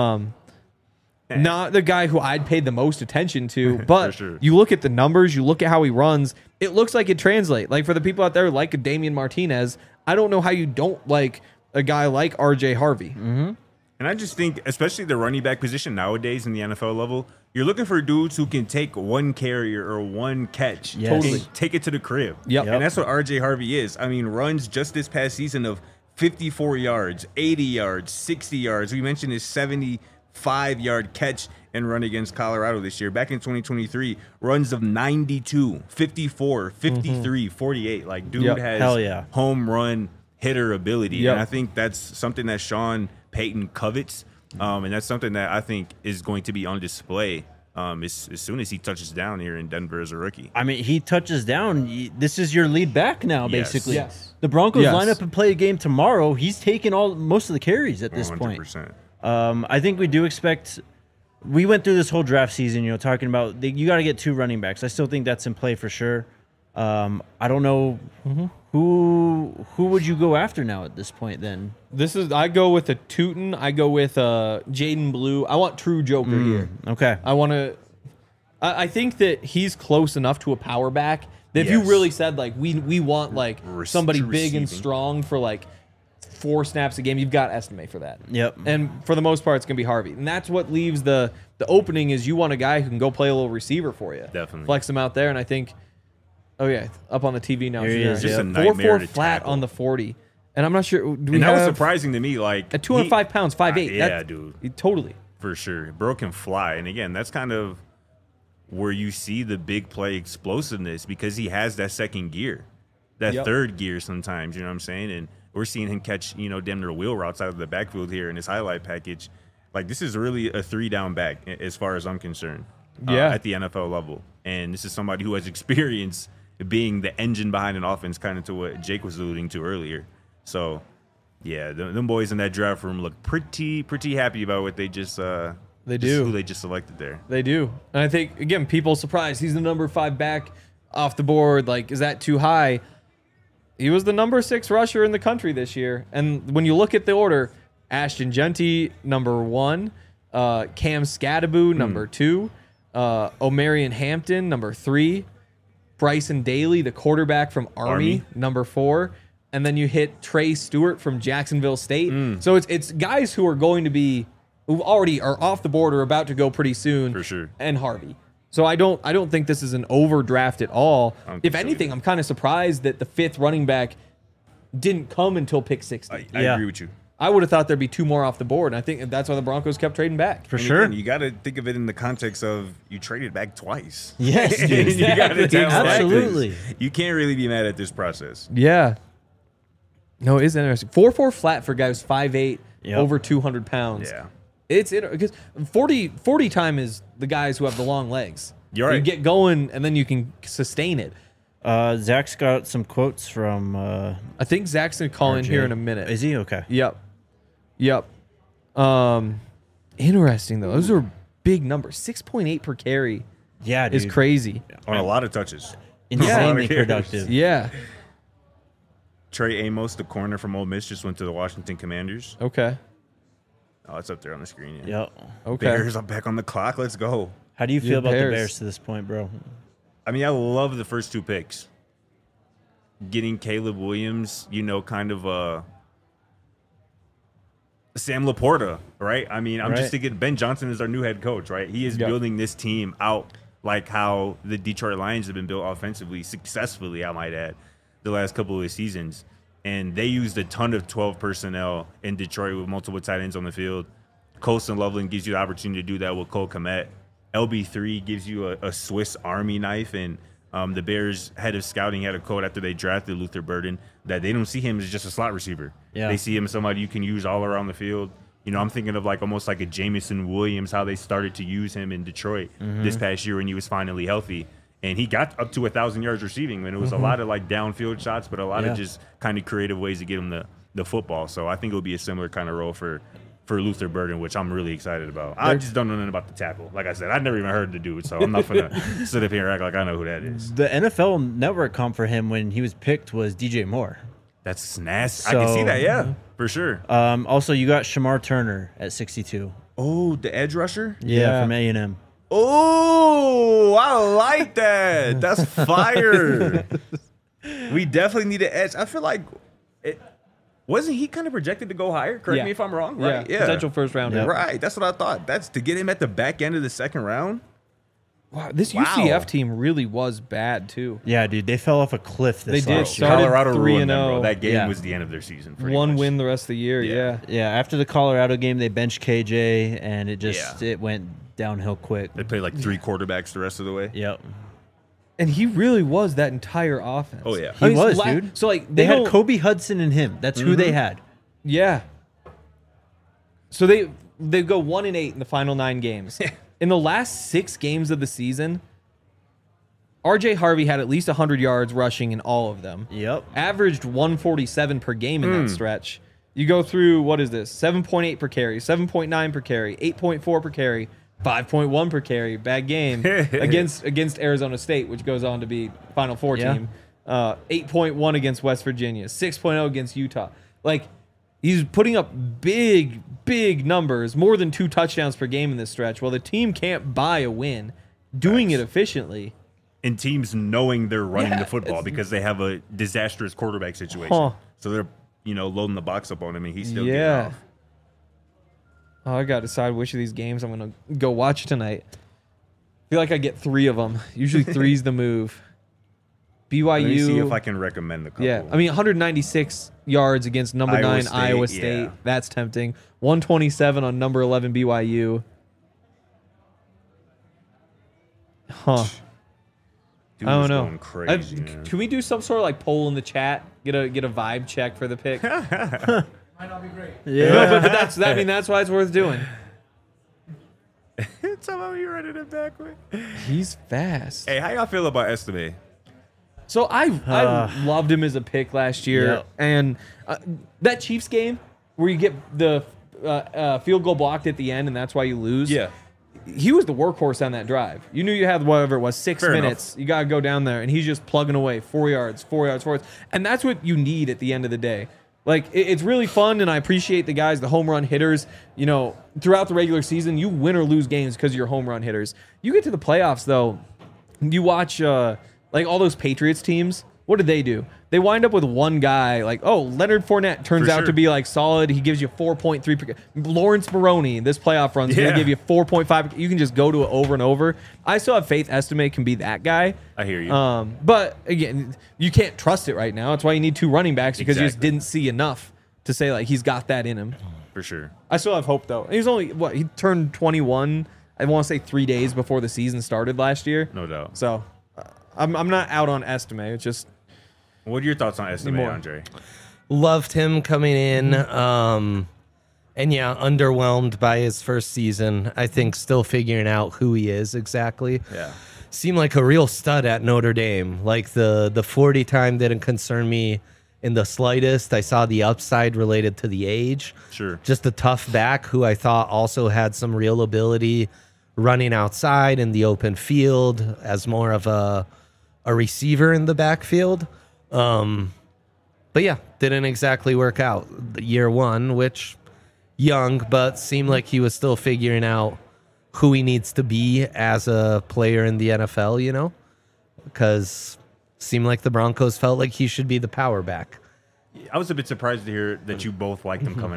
Not the guy who I'd paid the most attention to, but sure. you look at the numbers, you look at how he runs, it looks like it translates. Like for the people out there like a Damian Martinez, I don't know how you don't like a guy like RJ Harvey. And I just think, especially the running back position nowadays in the NFL level, you're looking for dudes who can take one carrier or one catch Yes. and take it to the crib. Yep. And that's what RJ Harvey is. I mean, runs just this past season of 54 yards, 80 yards, 60 yards. We mentioned his 75-yard catch and run against Colorado this year. Back in 2023, runs of 92, 54, 53, 48. Like, dude Yep. has Hell yeah. home run hitter ability. Yep. And I think that's something that Sean Payton covets. And that's something that I think is going to be on display as soon as he touches down here in Denver as a rookie. I mean, he touches down. This is your lead back now, Yes. basically. Yes. The Broncos Yes. line up and play a game tomorrow. He's taking most of the carries at this point. 100%. I think we do expect. We went through this whole draft season, talking about you got to get 2 running backs. I still think that's in play for sure. I don't know who would you go after now at this point. Then I go with a Tootin. I go with Jaden Blue. I want true Joker here. okay, I want to. I think that he's close enough to a power back that if you Yes. really said like we want like somebody big and receiving. strong for like 4 snaps a game, you've got estimate for that. Yep. And for the most part, it's gonna be Harvey, and that's what leaves the opening is you want a guy who can go play a little receiver for you. Definitely. Flex him out there, and I think. Oh yeah, up on the TV now. Here he is, Just a yep. nightmare 4.4 to flat tackle. on the 40, and I'm not sure. Do we And that was have surprising to me. Like at 205 pounds, 5'8"? Yeah, dude. Totally. For sure. Bro can fly. And again, that's kind of where you see the big play explosiveness because he has that second gear, that Yep. third gear sometimes, you know what I'm saying? And we're seeing him catch, damn near wheel routes out of the backfield here in his highlight package. Like, this is really a 3-down back as far as I'm concerned at the NFL level. And this is somebody who has experience being the engine behind an offense, kind of to what Jake was alluding to earlier. So, yeah, them boys in that draft room look pretty happy about what they just They just do. who they just selected there. They do. And I think, again, people surprised. He's the number 5 back off the board. Like, is that too high? He was the number 6 rusher in the country this year. And when you look at the order, Ashton Genty, number 1. Cam Scadaboo, number 2. Omarion Hampton, number 3. Bryson Daly, the quarterback from Army, number 4. And then you hit Trey Stewart from Jacksonville State. So it's guys who are going to be who already are off the board or about to go pretty soon. For sure. And Harvey. So I don't think this is an overdraft at all. I don't If think so anything, either. I'm kind of surprised that the 5th running back didn't come until pick 60. I Yeah. agree with you. I would have thought there'd be 2 more off the board, and I think that's why the Broncos kept trading back. for And sure. again, you got to think of it in the context of you traded back twice. Yes, dude, You gotta exactly. tell that, 'cause Absolutely. You can't really be mad at this process. Yeah. No, it is interesting. 4.4 flat for guys 5'8", Yep. over 200 pounds. Yeah. It's because 40 time is the guys who have the long legs. You're right. You get going, and then you can sustain it. Zach's got some quotes from. I think Zach's going to call in RJ. here in a minute. Is he okay? Yep. Interesting, though. Those are big numbers. 6.8 per carry Yeah, dude. is crazy. On a lot of touches. Insanely Yeah. productive. Yeah. Trey Amos, the corner from Ole Miss, just went to the Washington Commanders. Okay. Oh, it's up there on the screen. Yeah. Yep. Okay. Bears are back on the clock. Let's go. How do you feel Yeah, about the Bears. Bears to this point, bro? I mean, I love the first 2 picks. Getting Caleb Williams, kind of Sam Laporta, right? I mean, I'm Right. just thinking Ben Johnson is our new head coach, right? He is Yep. building this team out like how the Detroit Lions have been built offensively, successfully, I might add, the last couple of seasons. And they used a ton of 12 personnel in Detroit with multiple tight ends on the field. Colston Loveland gives you the opportunity to do that with Cole Kmet. LB3 gives you a Swiss Army knife, and the Bears head of scouting had a quote after they drafted Luther Burden that they don't see him as just a slot receiver. Yeah. They see him as somebody you can use all around the field. You know, I'm thinking of like almost like a Jameson Williams, how they started to use him in Detroit this past year when he was finally healthy. And he got up to 1,000 yards receiving, and it was a lot of like downfield shots, but a lot of just kind of creative ways to get him the football. So I think it'll be a similar kind of role for Luther Burden, which I'm really excited about. I just don't know nothing about the tackle. Like I said, I've never even heard the dude, so I'm not going to sit up here and act like I know who that is. The NFL Network comp for him when he was picked was DJ Moore. That's nasty. I can see that, yeah, for sure. Also, you got Shamar Turner at 62. Oh, the edge rusher? Yeah, from A&M. Oh, I like that. That's fire. We definitely need an edge. I feel like wasn't he kind of projected to go higher? Correct me if I'm wrong. Right? Yeah, potential first rounder. Yep. Right, that's what I thought. That's to get him at the back end of the second round. Wow, this UCF team really was bad too. Yeah, dude, they fell off a cliff this They did. last year. Started Colorado 3-0. ruined them, bro. That game Yeah. was the end of their season. One much. win the rest of the year. Yeah. Yeah, after the Colorado game, they benched KJ, and it went downhill quick. They played like 3 quarterbacks the rest of the way. Yep. And he really was that entire offense. Oh, yeah. He was, dude. So like They had Kobe Hudson and him. That's who they had. Yeah. So they go 1-8 in the final 9 games. In the last 6 games of the season, RJ Harvey had at least 100 yards rushing in all of them. Yep. Averaged 147 per game in that stretch. You go through, what is this? 7.8 per carry, 7.9 per carry, 8.4 per carry, 5.1 per carry. Bad game against Arizona State, which goes on to be Final Four team. 8.1 against West Virginia, 6.0 against Utah. Like, he's putting up big numbers, more than 2 touchdowns per game in this stretch. Well, the team can't buy a win doing it efficiently. And teams knowing they're running the football because they have a disastrous quarterback situation. So they're, loading the box up on him, and he's still getting off. Oh, I got to decide which of these games I'm going to go watch tonight. I feel like I get 3 of them. Usually 3's the move. BYU. Let me see if I can recommend a couple. Yeah, I mean, 196 yards against number 9 Iowa State. Yeah. That's tempting. 127 on number 11 BYU. Huh. Dude I don't was know. going crazy, man. Can we do some sort of like poll in the chat? Get a vibe check for the pick. Might not be great. Yeah. No, but that's why it's worth doing. Tell me you running it back with. He's fast. Hey, how y'all feel about Estime? So I loved him as a pick last year, and that Chiefs game where you get the field goal blocked at the end, and that's why you lose. Yeah. He was the workhorse on that drive. You knew you had whatever it was, 6 Fair minutes. enough. You got to go down there, and he's just plugging away 4 yards. And that's what you need at the end of the day. Like, it's really fun, and I appreciate the guys, the home run hitters. Throughout the regular season, you win or lose games because of your home run hitters. You get to the playoffs, though, you watch like all those Patriots teams. What did they do? They wind up with one guy, like, Leonard Fournette turns out to be like solid. He gives you 4.3 per. Lawrence Maroney, this playoff run is going to give you 4.5. You can just go to it over and over. I still have faith Estime can be that guy. I hear you. But again, you can't trust it right now. That's why you need 2 running backs because you just didn't see enough to say like he's got that in him. For sure. I still have hope though. He's only he turned 21. I want to say 3 days before the season started last year. No doubt. So I'm not out on Estime. It's just. What are your thoughts on Estime, More. Andre? Loved him coming in. And underwhelmed by his first season. I think still figuring out who he is exactly. Yeah. Seemed like a real stud at Notre Dame. Like the 40 time didn't concern me in the slightest. I saw the upside related to the age. Sure. Just a tough back who I thought also had some real ability running outside in the open field as more of a receiver in the backfield. But yeah, didn't exactly work out year 1, which young, but seemed like he was still figuring out who he needs to be as a player in the NFL, because seemed like the Broncos felt like he should be the power back. I was a bit surprised to hear that you both liked him coming out.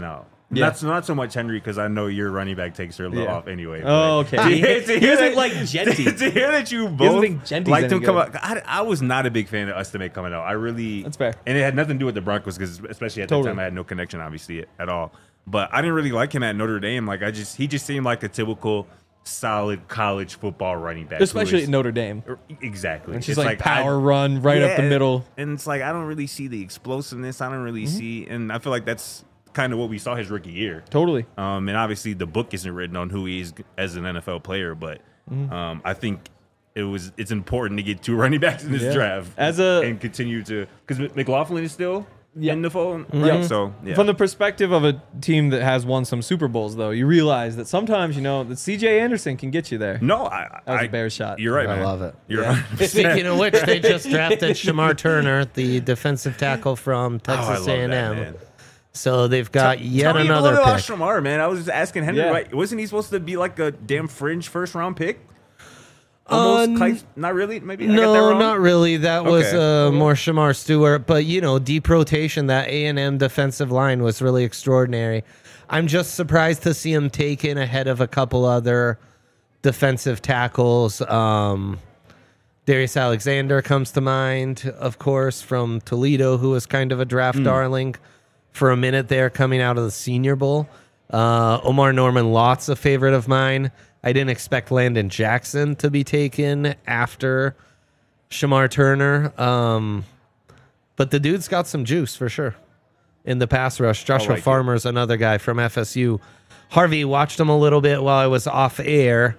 Yeah. Not so much Henry, because I know your running back takes are a little off anyway. Oh, but okay. to He doesn't like Genty. To hear that you doesn't both think Genty's liked any him come good. out, I was not a big fan of Estime coming out. I really That's fair. and it had nothing to do with the Broncos, because especially at that time I had no connection obviously at all. But I didn't really like him at Notre Dame. Like he just seemed like a typical solid college football running back, Especially at Notre Dame. Exactly. And she's like power run right up the middle. And it's like I don't really see the explosiveness. I don't really see, and I feel like that's kind of what we saw his rookie year. Totally. And obviously the book isn't written on who he is as an NFL player, but I think it's important to get 2 running backs in this draft and continue to, because McLaughlin is still in the fold, right? So from the perspective of a team that has won some Super Bowls, though, you realize that sometimes that C.J. Anderson can get you there. No, that was a Bears shot. You're right, man. I love it. You're right. Speaking of which, they just drafted Shamar Turner, the defensive tackle from Texas A&M. So they've got yet Tell me another a little pick. about Shamar, man. I was just asking Henry, right? Wasn't he supposed to be like a damn fringe first round pick? Almost, not really. Maybe I got that No, wrong? not really. That was more Shamar Stewart. But deep rotation. That A&M defensive line was really extraordinary. I'm just surprised to see him taken ahead of a couple other defensive tackles. Darius Alexander comes to mind, of course, from Toledo, who was kind of a draft darling for a minute there, coming out of the Senior Bowl. Omar Norman Lott's a favorite of mine. I didn't expect Landon Jackson to be taken after Shamar Turner. But the dude's got some juice for sure in the pass rush. Joshua Farmer's another guy from FSU. Harvey, watched him a little bit while I was off air.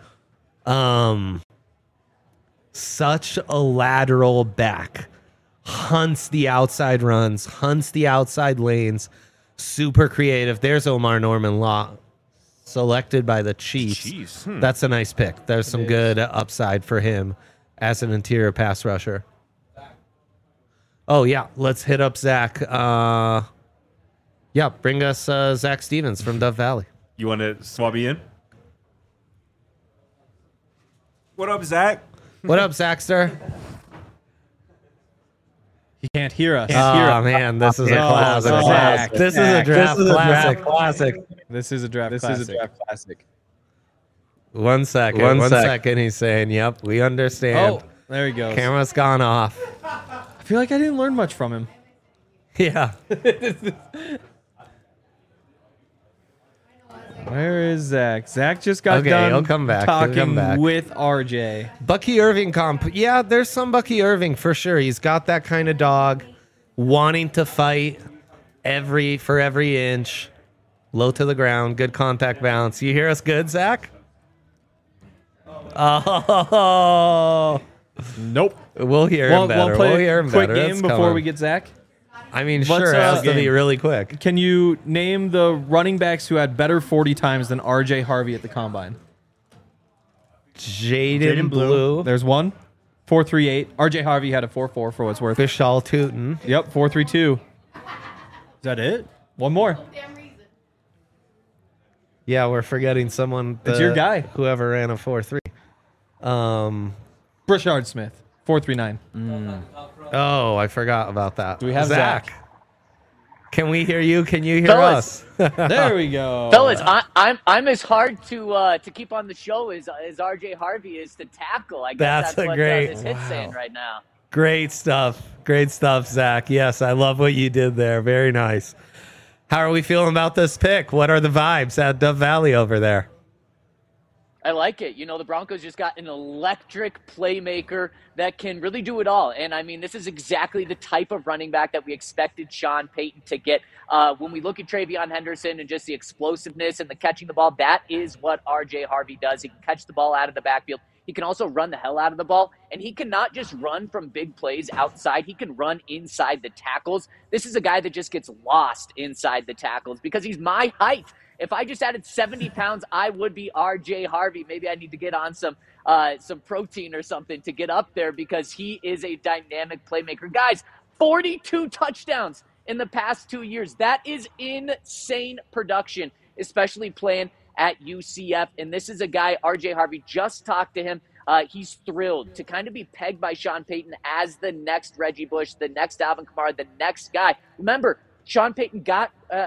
Such a lateral back. Hunts the outside runs, hunts the outside lanes. Super creative. There's Omar Norman Lott, selected by the Chiefs. That's a nice pick. There's some good upside for him as an interior pass rusher. Oh, yeah. Let's hit up Zach. Bring us Zach Stevens from Dove Valley. You want to swab me in? What up, Zach? What up, Zachster? He can't hear us. Oh, man. This is a classic. Zach. This is a draft classic. This is a draft classic. 1 second. One second. He's saying, yep, we understand. Oh, there he goes. Camera's gone off. I feel like I didn't learn much from him. Yeah. Where is Zach? Zach just got done he'll come back. talking with RJ. Bucky Irving comp. Yeah, there's some Bucky Irving for sure. He's got that kind of dog, wanting to fight for every inch, low to the ground, good contact balance. You hear us good, Zach? Oh. Nope. We'll hear him better. We'll hear him quick better. game before we get Zach. I mean, sure, it has to be really quick. Can you name the running backs who had better 40 times than RJ Harvey at the combine? Jaden Blue. There's one. 4.38. RJ Harvey had a 4.4 for what's worth. Vishal Tootin. Yep, 4.32. Is that it? One more. Yeah, we're forgetting someone. It's your guy. Whoever ran a 4.3. Brashard Smith, 4.39. Oh, I forgot about that. Do we have Zach? Can we hear you? Can you hear Fellas. us? There we go. Fellas, I'm as hard to keep on the show as RJ Harvey is to tackle. I guess that's what this hit's saying right now. Great stuff. Great stuff, Zach. Yes, I love what you did there. Very nice. How are we feeling about this pick? What are the vibes at Dove Valley over there? I like it. The Broncos just got an electric playmaker that can really do it all. And, I mean, this is exactly the type of running back that we expected Sean Payton to get. When we look at TreVeyon Henderson and just the explosiveness and the catching the ball, that is what R.J. Harvey does. He can catch the ball out of the backfield. He can also run the hell out of the ball. And he can not just run from big plays outside. He can run inside the tackles. This is a guy that just gets lost inside the tackles because he's my height. If I just added 70 pounds, I would be R.J. Harvey. Maybe I need to get on some protein or something to get up there because he is a dynamic playmaker. Guys, 42 touchdowns in the past 2 years. That is insane production, especially playing at UCF. And this is a guy, R.J. Harvey, just talked to him. He's thrilled to kind of be pegged by Sean Payton as the next Reggie Bush, the next Alvin Kamara, the next guy. Remember, Sean Payton got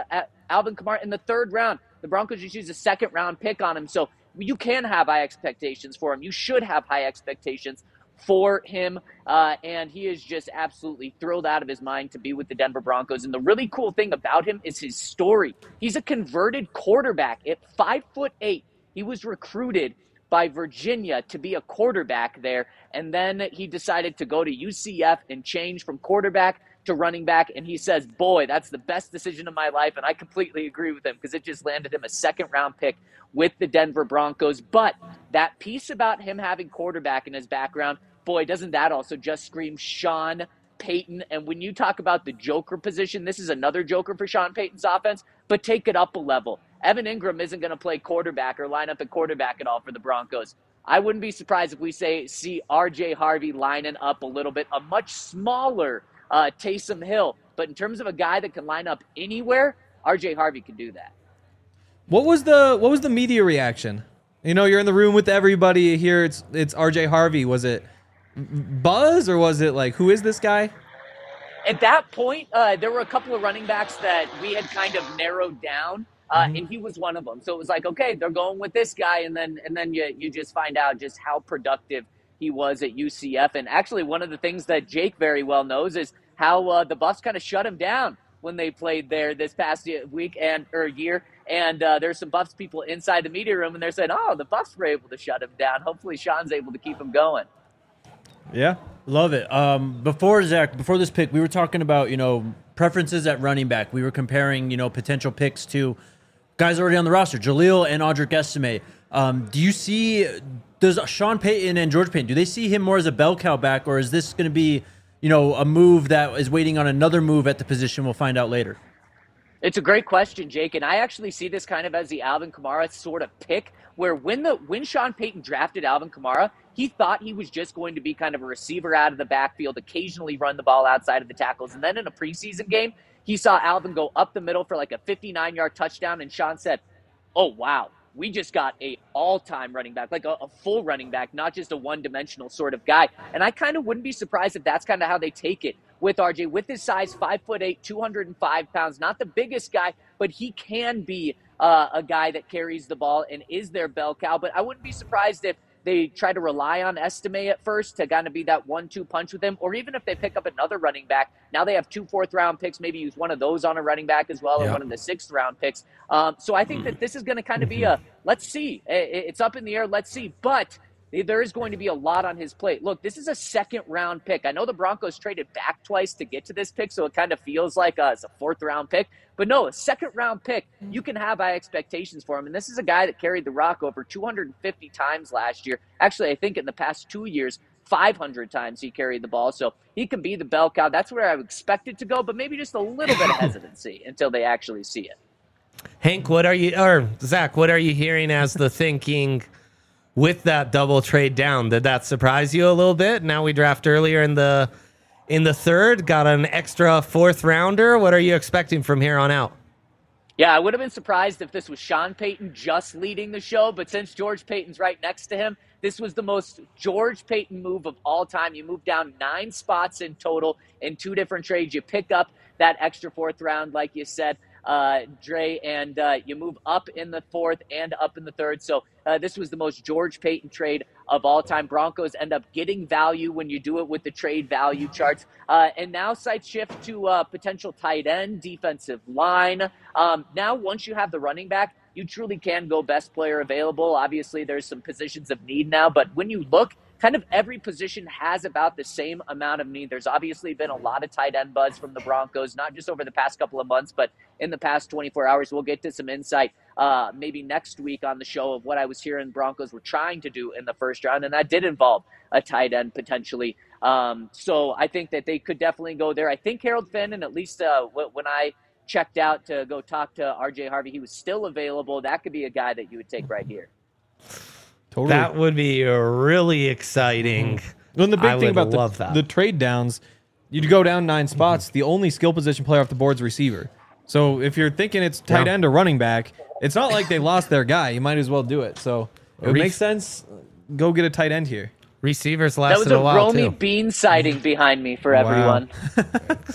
Alvin Kamara in the 3rd round. The Broncos just used a 2nd-round pick on him. So you can have high expectations for him. You should have high expectations for him, and he is just absolutely thrilled out of his mind to be with the Denver Broncos. And the really cool thing about him is his story. He's a converted quarterback. At 5'8", he was recruited by Virginia to be a quarterback there, and then he decided to go to UCF and change from quarterback to running back, and he says, boy, that's the best decision of my life, and I completely agree with him because it just landed him a 2nd-round pick with the Denver Broncos. But that piece about him having quarterback in his background, boy, doesn't that also just scream Sean Payton? And when you talk about the joker position, this is another joker for Sean Payton's offense, but take it up a level. Evan Ingram isn't going to play quarterback or line up at quarterback at all for the Broncos. I wouldn't be surprised if we see R.J. Harvey lining up a little bit, a much smaller Taysom Hill. But in terms of a guy that can line up anywhere, R.J. Harvey can do that. What was the media reaction? You know, you're in the room with everybody here. It's R.J. Harvey. Was it buzz or was it like, who is this guy? At that point, there were a couple of running backs that we had kind of narrowed down, and he was one of them. So it was like, okay, they're going with this guy, and then you just find out just how productive he was at UCF. And actually, one of the things that Jake very well knows is how the Buffs kind of shut him down when they played there this past week or year. And there's some Buffs people inside the media room, and they're saying, oh, the Buffs were able to shut him down. Hopefully Sean's able to keep him going. Yeah. Love it. Before this pick, we were talking about, preferences at running back. We were comparing, potential picks to guys already on the roster, Jaleel and Audric Estime. Does Sean Payton and George Payton, do they see him more as a bell cow back, or is this going to be, a move that is waiting on another move at the position? We'll find out later. It's a great question, Jake, and I actually see this kind of as the Alvin Kamara sort of pick, where when Sean Payton drafted Alvin Kamara, he thought he was just going to be kind of a receiver out of the backfield, occasionally run the ball outside of the tackles. And then in a preseason game, he saw Alvin go up the middle for like a 59-yard touchdown, and Sean said, oh, wow, we just got a all-time running back, like a full running back, not just a one-dimensional sort of guy. And I kind of wouldn't be surprised if that's kind of how they take it with RJ, with his size, 5'8", 205 pounds, not the biggest guy, but he can be a guy that carries the ball and is their bell cow. But I wouldn't be surprised if they try to rely on Estime at first to kind of be that 1-2 punch with him, or even if they pick up another running back. Now they have 2 4th-round picks, maybe use one of those on a running back as well, or one of the 6th-round picks. So I think that this is going to kind of be a, let's see. It's up in the air, let's see. But there is going to be a lot on his plate. Look, this is a 2nd-round pick. I know the Broncos traded back twice to get to this pick, so it kind of feels like it's a 4th-round pick. But no, a 2nd-round pick, you can have high expectations for him. And this is a guy that carried the rock over 250 times last year. Actually, I think in the past 2 years, 500 times he carried the ball. So he can be the bell cow. That's where I would expect it to go, but maybe just a little bit of hesitancy until they actually see it. Hank, Zach, what are you hearing as the thinking with that double trade down? Did that surprise you a little bit? Now we draft earlier in the 3rd, got an extra 4th rounder. What are you expecting from here on out? Yeah, I would have been surprised if this was Sean Payton just leading the show, but since George Payton's right next to him, this was the most George Payton move of all time. You move down 9 spots in total in 2 different trades. You pick up that extra 4th round, like you said, Dre, and you move up in the 4th and up in the 3rd. So this was the most George Payton trade of all time. Broncos end up getting value when you do it with the trade value charts. And now sights shift to potential tight end, defensive line. Now, once you have the running back, you truly can go best player available. Obviously, there's some positions of need now, but when you look, kind of every position has about the same amount of need. There's obviously been a lot of tight end buzz from the Broncos, not just over the past couple of months, but in the past 24 hours. We'll get to some insight maybe next week on the show of what I was hearing Broncos were trying to do in the 1st round, and that did involve a tight end potentially. So I think that they could definitely go there. I think Harold Finn, and at least when I checked out to go talk to R.J. Harvey, he was still available. That could be a guy that you would take right here. Totally. That would be really exciting. Well, and the big thing about the trade downs, you'd go down 9 spots. The only skill position player off the board is receiver. So if you're thinking it's tight end or running back, it's not like they lost their guy. You might as well do it. So it would make sense. Go get a tight end here. Receivers lasted a while. That was a Romy too. Bean sighting behind me for everyone.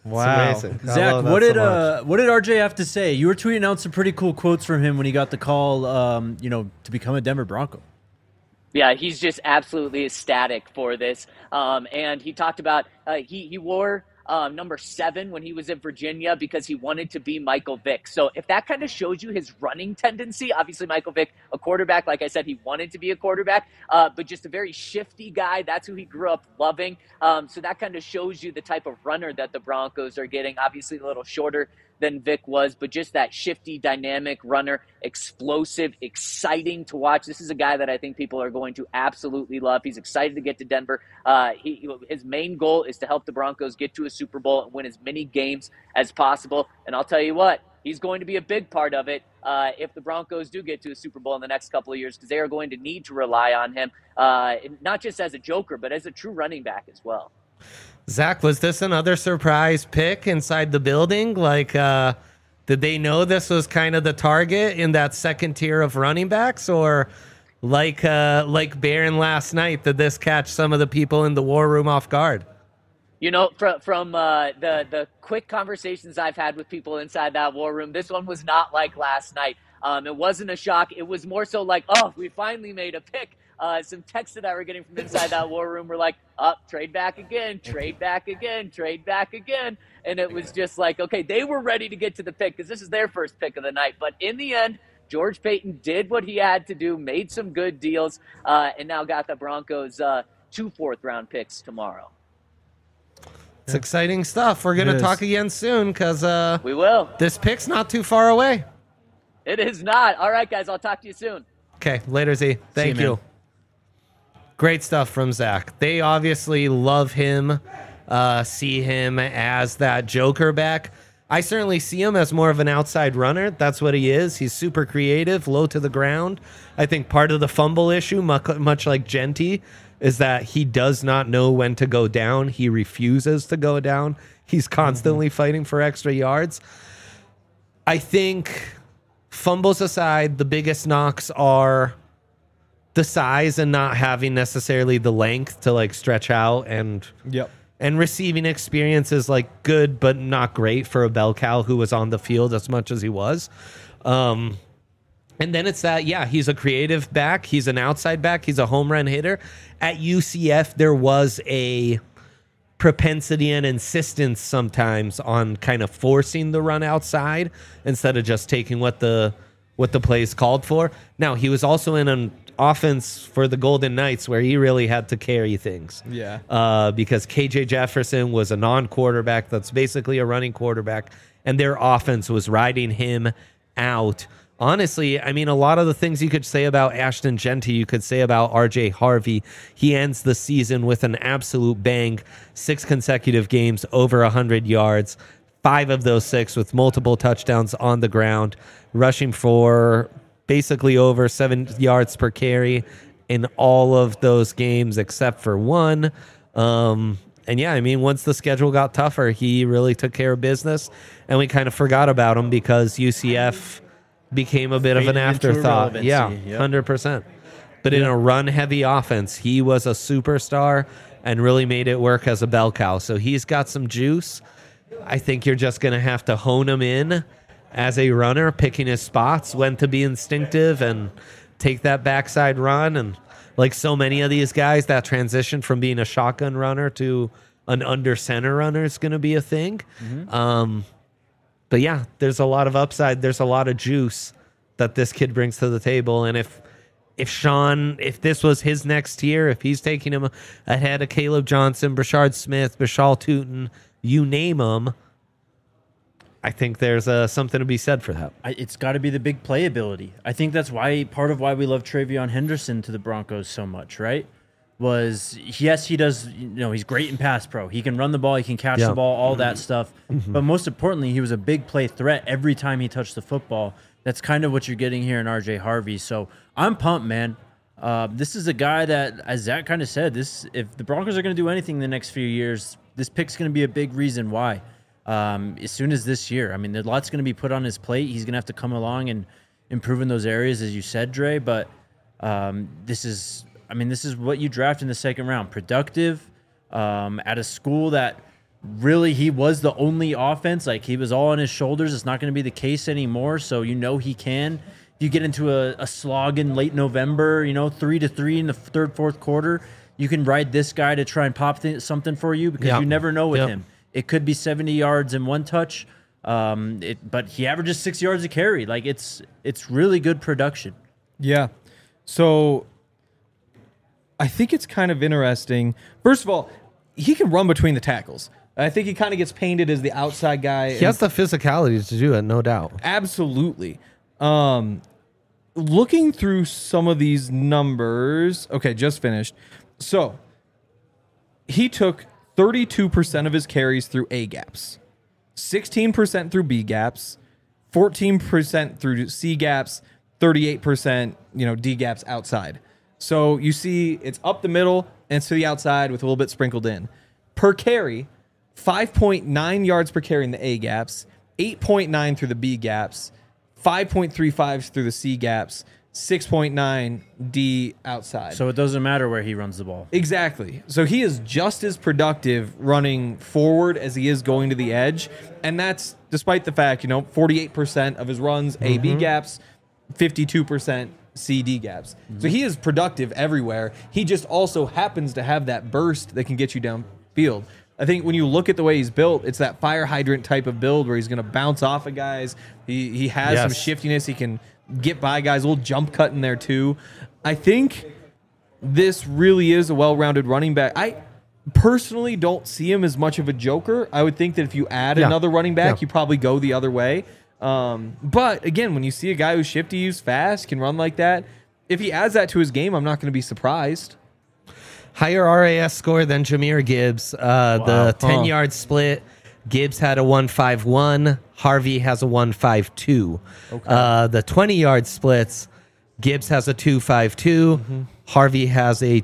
Wow. It's amazing. I Zach, love that what did so much. what did RJ have to say? You were tweeting out some pretty cool quotes from him when he got the call, to become a Denver Bronco. Yeah, he's just absolutely ecstatic for this. And he talked about he wore number 7 when he was in Virginia because he wanted to be Michael Vick. So if that kind of shows you his running tendency, obviously Michael Vick, a quarterback, like I said, he wanted to be a quarterback, but just a very shifty guy. That's who he grew up loving. So that kind of shows you the type of runner that the Broncos are getting. Obviously a little shorter than Vic was, but just that shifty, dynamic runner, explosive, exciting to watch. This is a guy that I think people are going to absolutely love. He's excited to get to Denver. His main goal is to help the Broncos get to a Super Bowl and win as many games as possible. And I'll tell you what, he's going to be a big part of it if the Broncos do get to a Super Bowl in the next couple of years, because they are going to need to rely on him, not just as a joker, but as a true running back as well. Zach, was this another surprise pick inside the building? Like, did they know this was kind of the target in that second tier of running backs, or like Barron last night, did this catch some of the people in the war room off guard? You know, from the quick conversations I've had with people inside that war room, this one was not like last night. It wasn't a shock. It was more so like, oh, we finally made a pick. Some texts that I were getting from inside that war room were like, trade back again, trade back again, trade back again. And it was just like, okay, they were ready to get to the pick because this is their first pick of the night. But in the end, George Paton did what he had to do, made some good deals, and now got the Broncos 2 fourth-round picks tomorrow. It's exciting stuff. We're going to talk again soon because we will. This pick's not too far away. It is not. All right, guys, I'll talk to you soon. Okay, later, Z. Thank you, you. Great stuff from Zach. They obviously love him, see him as that joker back. I certainly see him as more of an outside runner. That's what he is. He's super creative, low to the ground. I think part of the fumble issue, much like Genty, is that he does not know when to go down. He refuses to go down. He's constantly fighting for extra yards. I think, fumbles aside, the biggest knocks are the size and not having necessarily the length to like stretch out, and receiving experience is like good but not great for a bell cow who was on the field as much as he was. And then it's that, he's a creative back. He's an outside back. He's a home run hitter. At UCF, there was a propensity and insistence sometimes on kind of forcing the run outside instead of just taking what the plays called for. Now, he was also in an offense for the Golden Knights where he really had to carry things. Because KJ Jefferson was a non-quarterback that's basically a running quarterback, and their offense was riding him out. Honestly, I mean, a lot of the things you could say about Ashton Genty, you could say about RJ Harvey. He ends the season with an absolute bang, 6 consecutive games, over 100 yards, 5 of those 6 with multiple touchdowns on the ground, rushing for basically over 7 yards per carry in all of those games except for one. And I mean, once the schedule got tougher, he really took care of business, and we kind of forgot about him because UCF became a bit of an afterthought. 100%. But in a run-heavy offense, he was a superstar and really made it work as a bell cow. So he's got some juice. I think you're just going to have to hone him in as a runner, picking his spots, when to be instinctive and take that backside run. And like so many of these guys, that transition from being a shotgun runner to an under center runner is going to be a thing. But yeah, there's a lot of upside. There's a lot of juice that this kid brings to the table. And if this was his next year, if he's taking him ahead of Caleb Johnson, Brashard Smith, Bashal Tootin, you name them, I think there's something to be said for that. It's got to be the big playability. I think that's part of why we love Travion Henderson to the Broncos so much, right? Was, yes, he does, he's great in pass pro. He can run the ball, he can catch the ball, all that stuff. But most importantly, he was a big play threat every time he touched the football. That's kind of what you're getting here in RJ Harvey. So I'm pumped, man. This is a guy that, as Zach kind of said, if the Broncos are going to do anything in the next few years, this pick's going to be a big reason why. As soon as this year, I mean, there's lots going to be put on his plate. He's going to have to come along and improve in those areas, as you said, Dre. But this is what you draft in the second round. Productive, at a school that really he was the only offense. Like, he was all on his shoulders. It's not going to be the case anymore. So, he can. If you get into a slog in late November, 3-3 in the third, fourth quarter, you can ride this guy to try and pop something for you because you never know with him. It could be 70 yards in one touch, but he averages 6 yards a carry. Like, it's really good production. Yeah. So I think it's kind of interesting. First of all, he can run between the tackles. I think he kind of gets painted as the outside guy. He has the physicality to do it, no doubt. Absolutely. Looking through some of these numbers. Okay, just finished. So he took 32% of his carries through A gaps, 16% through B gaps, 14% through C gaps, 38%, D gaps outside. So you see it's up the middle and it's to the outside with a little bit sprinkled in. Per carry, 5.9 yards per carry in the A gaps, 8.9 through the B gaps, 5.35 through the C gaps, 6.9 D outside. So it doesn't matter where he runs the ball. Exactly. So he is just as productive running forward as he is going to the edge. And that's despite the fact, 48% of his runs, A-B gaps, 52% C-D gaps. So he is productive everywhere. He just also happens to have that burst that can get you downfield. I think when you look at the way he's built, it's that fire hydrant type of build where he's going to bounce off of guys. He has some shiftiness. He can get by guys, a little jump cut in there too. I think this really is a well-rounded running back. I personally don't see him as much of a joker. I would think that if you add another running back, you probably go the other way. But again, when you see a guy who's shifty, who's fast, can run like that, if he adds that to his game, I'm not going to be surprised. Higher RAS score than Jahmyr Gibbs. The 10-yard split, Gibbs had a 1.51. Harvey has a 1.52. Okay. The 20-yard splits, Gibbs has a 2.52. Harvey has a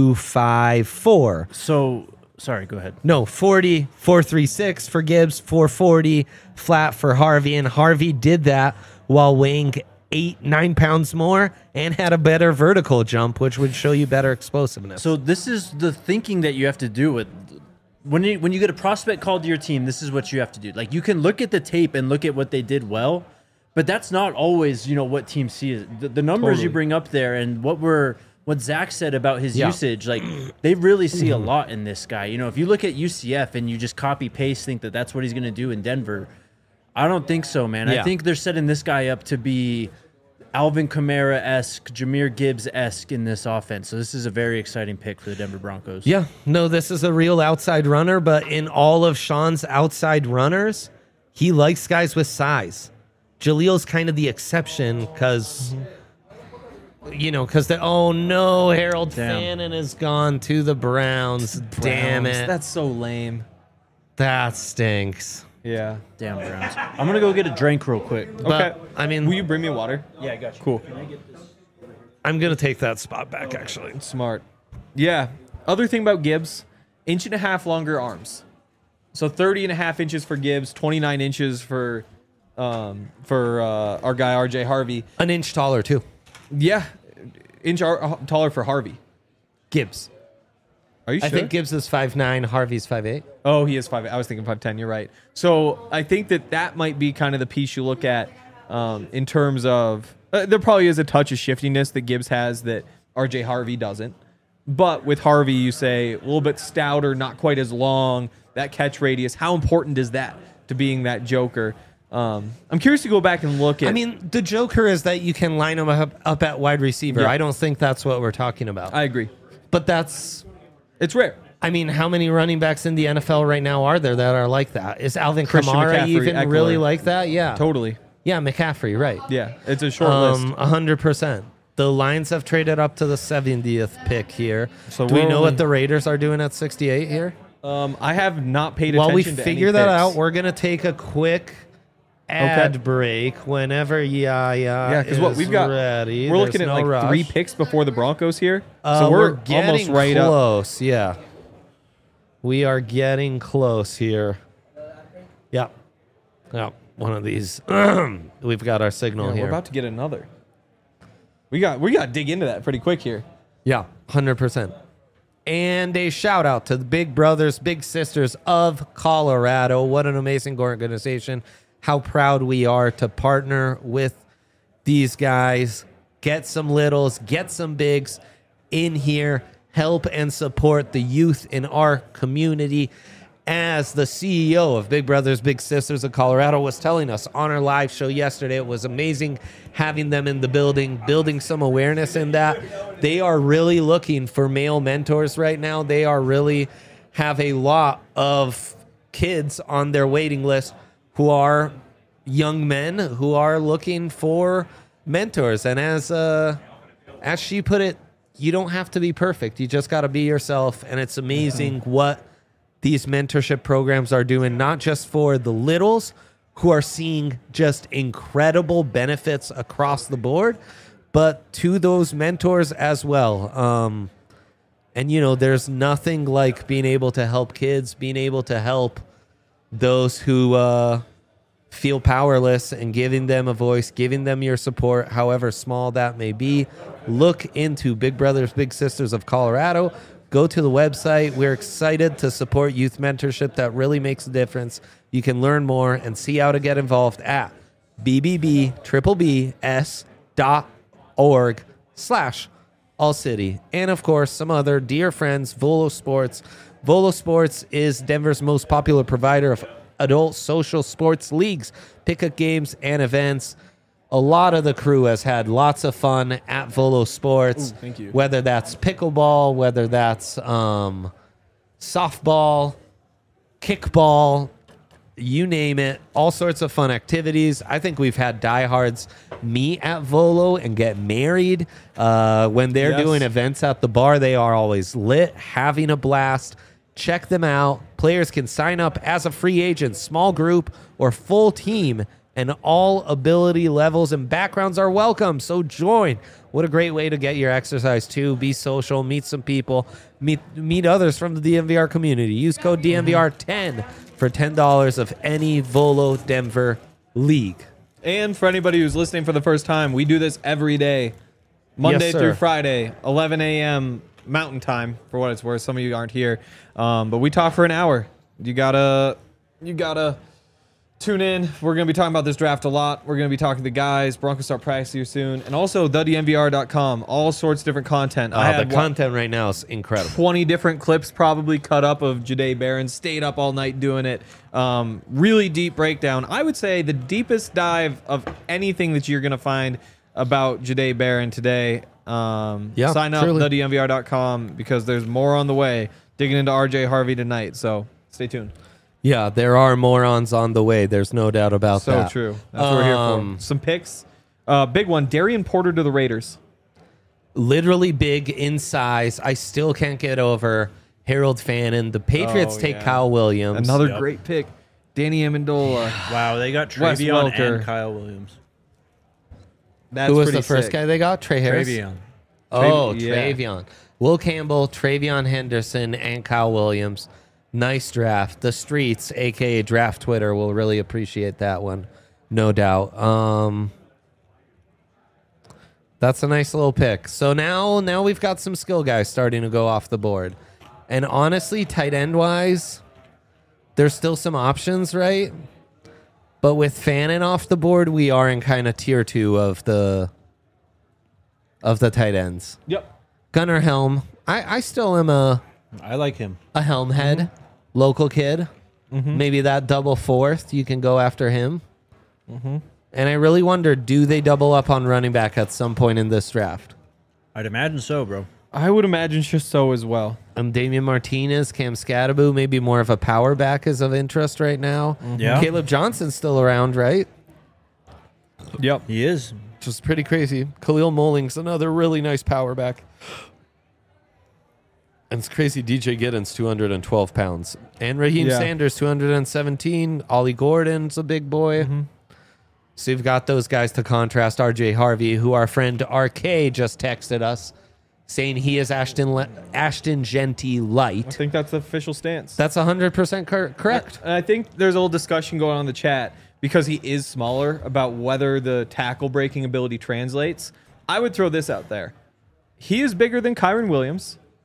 2.54. So, sorry, go ahead. No, 40, 4.36 for Gibbs, 4.40 flat for Harvey. And Harvey did that while weighing 8-9 pounds more and had a better vertical jump, which would show you better explosiveness. So this is the thinking that you have to do with when you get a prospect called to your team. This is what you have to do. Like, you can look at the tape and look at what they did well, but that's not always what teams see. The numbers you bring up there and what Zach said about his usage, like, they really see a lot in this guy. If you look at UCF and you just copy paste, think that that's what he's going to do in Denver, I don't think so, man. I think they're setting this guy up to be Alvin Kamara-esque, Jahmyr Gibbs-esque in this offense. So this is a very exciting pick for the Denver Broncos. Yeah, no, this is a real outside runner, but in all of Sean's outside runners, he likes guys with size. Jaleel's kind of the exception because, oh no, Harold Fannin is gone to the Browns. Damn it. That's so lame. That stinks. Yeah. Damn Browns. I'm going to go get a drink real quick. Okay. I mean, will you bring me water? Yeah, I got you. Cool. Can I get this? I'm going to take that spot back, actually. Smart. Yeah. Other thing about Gibbs, 1.5 inch longer arms. So 30.5 inches for Gibbs, 29 inches for our guy RJ Harvey. An inch taller, too. Yeah. Taller for Harvey. Gibbs. Are you sure? I think Gibbs is 5'9", Harvey's 5'8". Oh, he is 5'8". I was thinking 5'10". You're right. So I think that might be kind of the piece you look at in terms of there probably is a touch of shiftiness that Gibbs has that RJ Harvey doesn't. But with Harvey, you say a little bit stouter, not quite as long, that catch radius. How important is that to being that joker? I'm curious to go back and look at... I mean, the joker is that you can line him up at wide receiver. Yeah. I don't think that's what we're talking about. I agree. But that's... It's rare. I mean, how many running backs in the NFL right now are there that are like that? Is Alvin Christian Kamara McCaffrey, even Eckler. really like that? Yeah. Totally. Yeah, McCaffrey, right. Yeah, it's a short list. 100%. The Lions have traded up to the 70th pick here. So do we know what the Raiders are doing at 68 here? I have not paid While attention we to figure any that picks. out, we're going to take a quick ad break whenever because what we've got, ready. we're looking There's at no like rush. 3 picks before the Broncos here. So we're getting almost right up. close. Yeah, we are getting close here. Yeah, one of these. We've got our signal Yeah, here. we're about to get another. We got to dig into that pretty quick here. Yeah, 100%. And a shout out to the Big Brothers, Big Sisters of Colorado. What an amazing organization. How proud we are to partner with these guys. Get some littles, get some bigs in here. Help and support the youth in our community. As the CEO of Big Brothers Big Sisters of Colorado was telling us on our live show yesterday, it was amazing having them in the building, building some awareness in that. They are really looking for male mentors right now. They are really have a lot of kids on their waiting list who are young men who are looking for mentors. And as she put it, you don't have to be perfect. You just got to be yourself. And it's amazing what these mentorship programs are doing, not just for the littles who are seeing just incredible benefits across the board, but to those mentors as well. And, you know, there's nothing like being able to help kids, being able to help those who feel powerless and giving them a voice, giving them your support, however small that may be. Look into Big Brothers Big Sisters of Colorado. Go to the website. We're excited to support youth mentorship that really makes a difference. You can learn more and see how to get involved at bbbs.org/all-city. And, of course, some other dear friends, Volo Sports. Volo Sports is Denver's most popular provider of adult social sports leagues, pickup games, and events. A lot of the crew has had lots of fun at Volo Sports. Ooh, thank you. Whether that's pickleball, whether that's softball, kickball, you name it, all sorts of fun activities. I think we've had diehards meet at Volo and get married. When they're doing events at the bar, they are always lit, having a blast. Check them out. Players can sign up as a free agent, small group, or full team, and all ability levels and backgrounds are welcome. So join. What a great way to get your exercise too. Be social, meet some people, meet others from the DNVR community. Use code DNVR10 for $10 of any Volo Denver league. And for anybody who's listening for the first time, we do this every day, Monday through Friday, 11 a.m. Mountain Time, for what it's worth. Some of you aren't here, but we talk for an hour. You gotta tune in. We're going to be talking about this draft a lot. We're going to be talking to the guys. Broncos start practicing here soon. And also, thednvr.com. All sorts of different content. The content right now is incredible. 20 different clips probably cut up of Jahdae Barron. Stayed up all night doing it. Really deep breakdown. I would say the deepest dive of anything that you're going to find about Jahdae Barron today. Sign up, thednvr.com, because there's more on the way. Digging into RJ Harvey tonight. So stay tuned. Yeah, there are morons on the way. There's no doubt about that. So true. That's what we're here for. Some picks. Big one. Darian Porter to the Raiders. Literally big in size. I still can't get over Harold Fannin. The Patriots take Kyle Williams. Another great pick. Danny Amendola. Wow, they got Travion and Kyle Williams. That's Who was pretty the first sick. guy they got? Trey Harris? Travion. Oh, Yeah. Travion. Will Campbell, Travion Henderson, and Kyle Williams. Nice draft. The streets, a.k.a. Draft Twitter, will really appreciate that one. No doubt. That's a nice little pick. So now we've got some skill guys starting to go off the board. And honestly, tight end-wise, there's still some options, right? But with Fannin off the board, we are in kind of tier 2 of the tight ends. Yep. Gunnar Helm. I still am I like him. a Helm head, local kid. Maybe that double fourth, you can go after him. And I really wonder, do they double up on running back at some point in this draft? I'd imagine so, bro. I would imagine so as well. Damian Martinez, Cam Scatteraboo, maybe more of a power back is of interest right now. Yeah. Caleb Johnson's still around, right? Yep. He is. Which is pretty crazy. Khalil Mulling's another really nice power back. And it's crazy. DJ Giddens, 212 pounds. And Raheem Sanders, 217. Ollie Gordon's a big boy. So you've got those guys to contrast RJ Harvey, who our friend RK just texted us, saying he is Ashton Genty light. I think that's the official stance. That's 100% correct. And I think there's a little discussion going on in the chat because he is smaller about whether the tackle breaking ability translates. I would throw this out there. He is bigger than Kyron Williams.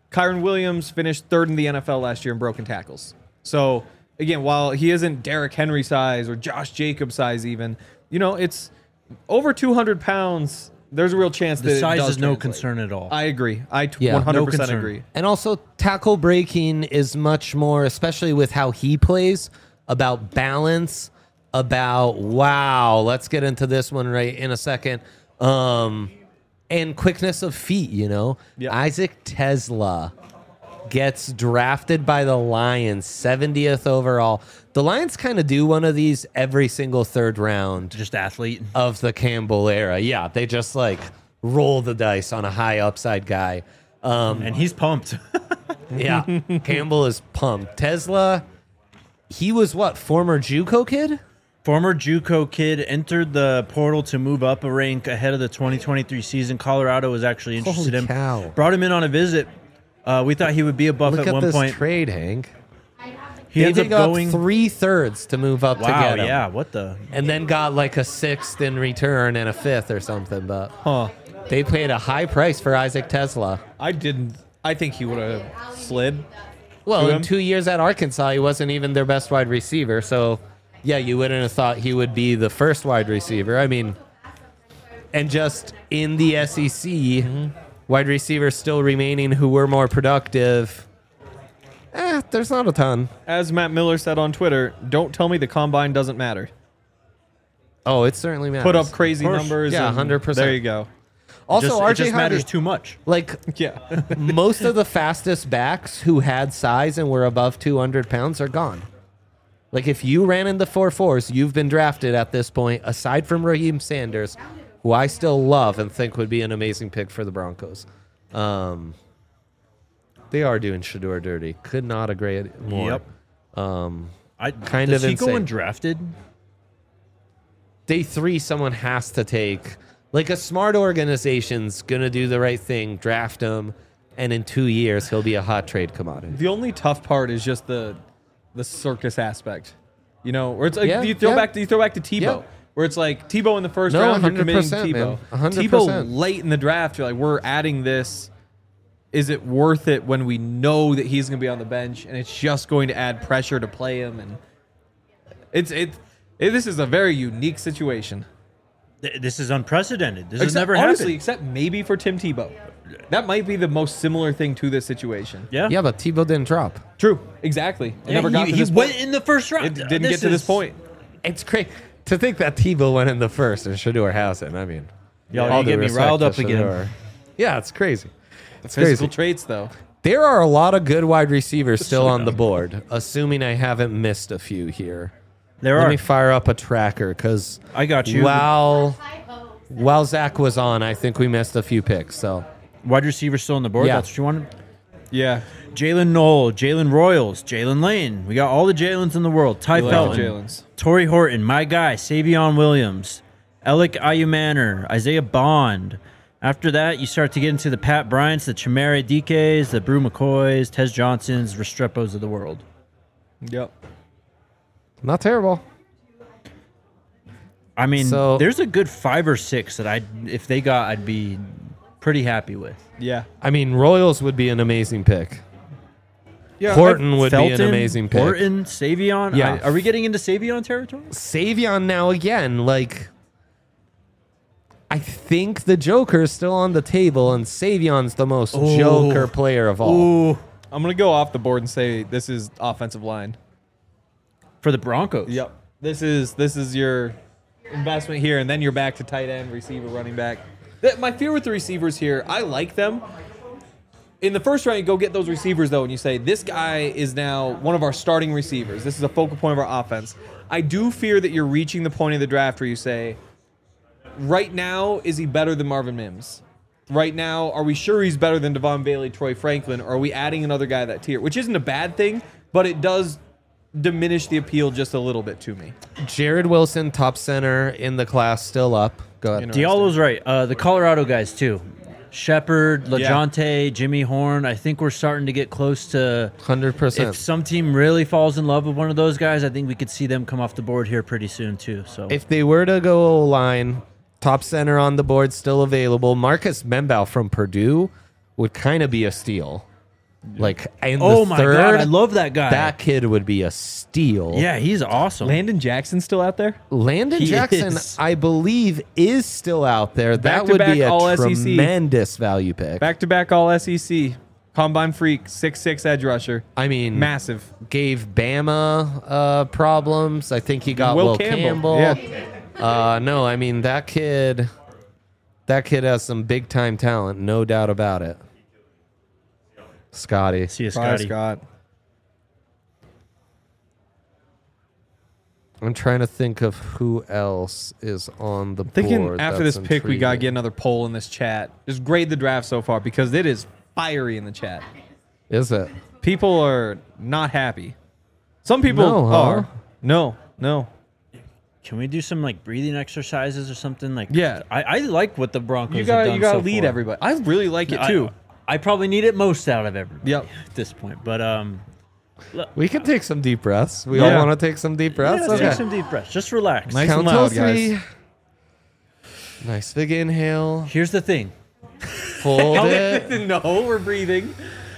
Kyron Williams finished third in the NFL last year in broken tackles. So, again, while he isn't Derrick Henry size or Josh Jacobs size even, it's over 200 pounds. There's a real chance that the size it does is no translate. concern at all. I agree. I 100% concern. agree. And also, tackle breaking is much more, especially with how he plays, about balance, about, let's get into this one right in a second, and quickness of feet, Yep. Isaac Tesla gets drafted by the Lions, 70th overall. The Lions kind of do one of these every single third round. Just athlete. Of the Campbell era. Yeah, they just roll the dice on a high upside guy. And he's pumped. Yeah, Campbell is pumped. Tesla, he was former JUCO kid? Former JUCO kid, entered the portal to move up a rank ahead of the 2023 season. Colorado was actually interested in him. Cow. Brought him in on a visit. We thought he would be a buff Look at one this point. trade, Hank. He They ends up dig up going 3/3 to move up to Wow, get him. yeah, what the? And then got a 6th in return and a 5th or something. But Huh. they paid a high price for Isaac Tesla. I think he would have slid. Well, To in him? 2 years at Arkansas, he wasn't even their best wide receiver. So, yeah, you wouldn't have thought he would be the first wide receiver. I mean, and just in the SEC, wide receivers still remaining who were more productive. There's not a ton. As Matt Miller said on Twitter, don't tell me the combine doesn't matter. Oh, it certainly matters. Put up crazy course. numbers. Yeah, and 100%. There you go. Also, It just RJ matters Hardy, too much. Yeah. most of the fastest backs who had size and were above 200 pounds are gone. If you ran in the 4.4s, you've been drafted at this point, aside from Raheem Sanders, who I still love and think would be an amazing pick for the Broncos. They are doing Shedeur dirty. Could not agree more. Yep. Kind does of he go insane. undrafted? Day 3, someone has to take. A smart organization's going to do the right thing, draft him, and in 2 years, he'll be a hot trade commodity. The only tough part is just the circus aspect. Where it's Yeah, you throw yeah. back to Tebow. Yeah. Where it's Tebow in the first No, round, you're committing 100%, Tebow. man. 100%. Tebow late in the draft, you're we're adding this. Is it worth it when we know that he's going to be on the bench and it's just going to add pressure to play him? And this is a very unique situation. This is unprecedented. This has Except, never honestly, happened. except maybe for Tim Tebow. That might be the most similar thing to this situation. Yeah. Yeah, but Tebow didn't drop. True. Exactly. It never got to he this went point. in the first round. It didn't get to this point. It's crazy to think that Tebow went in the first and Shedeur hasn't. I mean, Y'all, all you due get me respect riled to up again. Shedeur. Yeah, it's crazy. It's Physical crazy. traits, though. There are a lot of good wide receivers still on the board, assuming I haven't missed a few here. There Let are. me fire up a tracker because I got you. While Zach was on, I think we missed a few picks. So Wide receiver still on the board. Yeah. That's what you wanted. Yeah. Jalen Knoll, Jalen Royals, Jalen Lane. We got all the Jalen's in the world. Ty We like the Felton, Jalen's. Torrey Horton, my guy, Savion Williams, Alec Ayumanner, Isaiah Bond. After that, you start to get into the Pat Bryants, the Chimere DKs, the Brew McCoys, Tez Johnsons, Restrepos of the world. Yep. not terrible. I mean, So- there's a good 5 or 6 that if they got, I'd be pretty happy with. Yeah. I mean, Royals would be an amazing pick. Yeah. Horton would be an Felton, amazing pick. Horton, Savion. Yeah. Are we getting into Savion territory? Savion now again, I think the Joker's still on the table, and Savion's the most Joker player of all. Ooh, I'm going to go off the board and say this is offensive line. for the Broncos. Yep. This is your investment here, and then you're back to tight end, receiver, running back. My fear with the receivers here, I like them. In the first round, you go get those receivers, though, and you say, this guy is now one of our starting receivers. This is a focal point of our offense. I do fear that you're reaching the point of the draft where you say, right now, is he better than Marvin Mims? Right now, are we sure he's better than Devon Bailey, Troy Franklin, or are we adding another guy that tier? Which isn't a bad thing, but it does diminish the appeal just a little bit to me. Jared Wilson, top center in the class, still up. Go ahead. Diallo's right. The Colorado guys, too. Shepard, Yeah. LaJonte, Jimmy Horn. I think we're starting to get close to 100%. if some team really falls in love with one of those guys, I think we could see them come off the board here pretty soon, too. So If they were to go O-line, top center on the board still available. Marcus Membaugh from Purdue would kind of be a steal. Like in Oh the my third, God, I love that guy. That kid would be a steal. Yeah, he's awesome. Landon Jackson still out there? Landon He Jackson, is. I believe, is still out there. That would Back-to-back be a All SEC. tremendous value pick. Back-to-back all SEC. Combine freak, 6'6" edge rusher. I mean, Massive. gave Bama problems. I think he got Will Campbell. Yeah. No, I mean that kid has some big time talent, no doubt about it. Scotty. See you, Bye, Scotty. Scott. I'm trying to think of who else is on the Thinking board. after that's this pick, we got to intriguing. get another poll in this chat. Just grade the draft so far because it is fiery in the chat. Is it? People are not happy. Some people No, huh? are. No. Can we do some like breathing exercises or something? Like, Yeah. I like what the Broncos You have got done you got to so lead far. everybody. I really like it too. I probably need it most out of everybody. Yep. At this point, but We can take some deep breaths. We Yeah. all want to take some deep breaths. let's take Okay. some deep breaths. Just relax. Nice Count and till loud, three. guys. Nice big inhale. Here's the thing. Hold it. No, we're breathing.